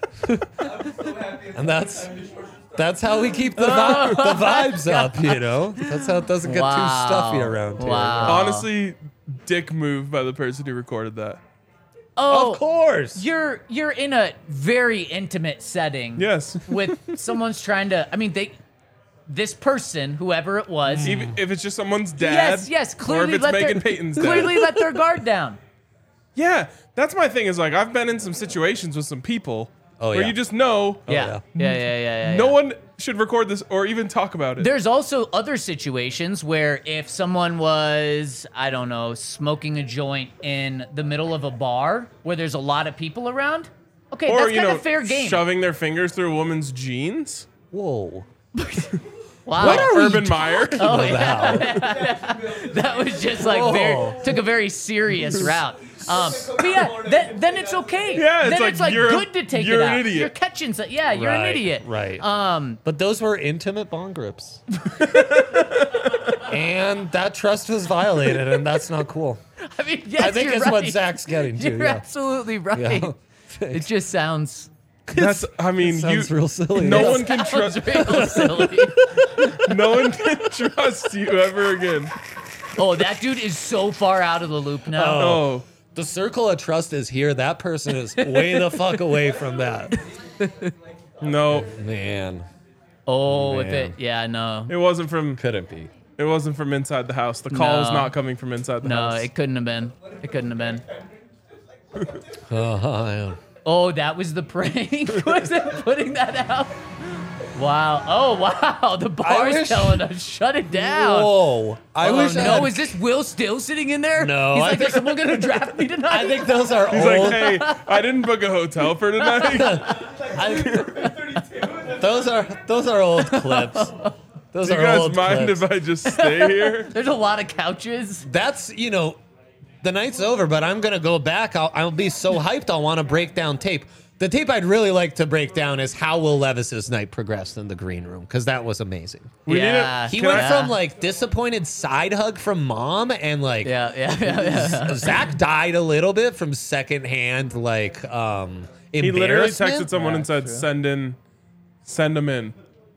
and that's how we keep the vibes up, you know. That's how it doesn't get too stuffy around here. Wow. Honestly, dick move by the person who recorded that. Oh, Of course. you're in a very intimate setting. Yes. With someone's trying to. I mean, this person, whoever it was. Even if it's just someone's dad. Yes. Or Clearly, if it's Megan Payton's dad. clearly let their guard down. Yeah, that's my thing. Is like I've been in some situations with some people where yeah. you just know Yeah. no one should record this or even talk about it. There's also other situations where if someone was, I don't know, smoking a joint in the middle of a bar where there's a lot of people around, okay, or that's kind of fair game. shoving their fingers through a woman's jeans. Whoa. Wow. Like Urban Meyer. Oh, yeah. That was just like took a very serious route. But yeah, then it's okay. Yeah, it's then like, it's like you're- good to take you're it an out. idiot. You're catching some. Yeah, you're an idiot. Right. But those were intimate bond grips. And that trust was violated, and that's not cool. I mean, yes, I think you're it's right. what Zach's getting to. You're Yeah. absolutely right. Yeah. It just sounds. That's. I mean, Sounds real silly. No one can sounds trust. real silly. No one can trust you ever again. Oh, that dude is so far out of the loop now. Oh, The circle of trust is here. That person is way the fuck away from that. no, Man, Oh, if Man. it, yeah, no. it wasn't from. couldn't be. It wasn't from inside the house. The call was No. not coming from inside the No, house. it couldn't have been. It couldn't have been. Yeah. Oh, that was the prank. Was it putting that out? Wow. Oh, wow. The bar's wish- telling us shut it down. Whoa. I Oh, wish I no, had- is this Will still sitting in there? No, He's I like, think- is someone going to draft me tonight? I think those are He's old. like, hey, I didn't book a hotel for tonight. Those are old clips. Those Do you are guys old mind clips. if I just stay here? There's a lot of couches. That's, you know, the night's over, but I'm going to go back. I'll be so hyped I'll want to break down tape. The tape I'd really like to break down is how Will Levis's night progressed in the green room, because that was amazing. He He went from like disappointed side hug from mom and like Zach died a little bit from secondhand like embarrassment. He literally texted someone and said, "Send him in."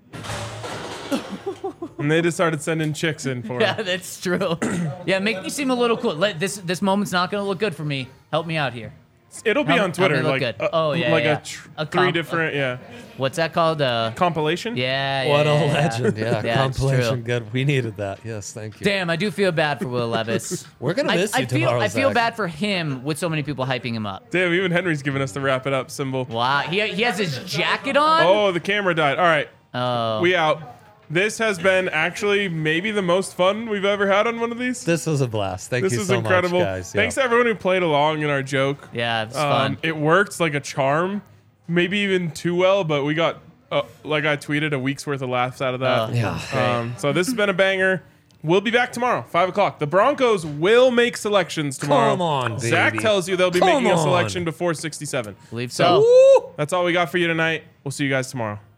And they just started sending chicks in for him. Yeah, that's true. Yeah, make me seem a little cool. This moment's not gonna look good for me. Help me out here. It'll be on Twitter, like three different, What's that called? Compilation. Yeah. What a legend! Yeah, Yeah, compilation. Good. We needed that. Yes, thank you. Damn, I do feel bad for Will Levis. We're gonna miss you tomorrow. I feel Zach. bad for him with so many people hyping him up. Damn, even Henry's giving us the wrap it up symbol. Wow, he has his jacket on. Oh, the camera died. All right, Oh. we out. This has been actually maybe the most fun we've ever had on one of these. This was a blast. Thank This you was so incredible. much, guys. Thanks to everyone who played along in our joke. Yeah, it's fun. It worked like a charm, maybe even too well, but we got, like I tweeted, a week's worth of laughs out of that. Yeah. So this has been a banger. We'll be back tomorrow, 5 o'clock. The Broncos will make selections tomorrow. Come on, baby. Zach tells you they'll be Come making a on. selection before 67. Believe So so. that's all we got for you tonight. We'll see you guys tomorrow.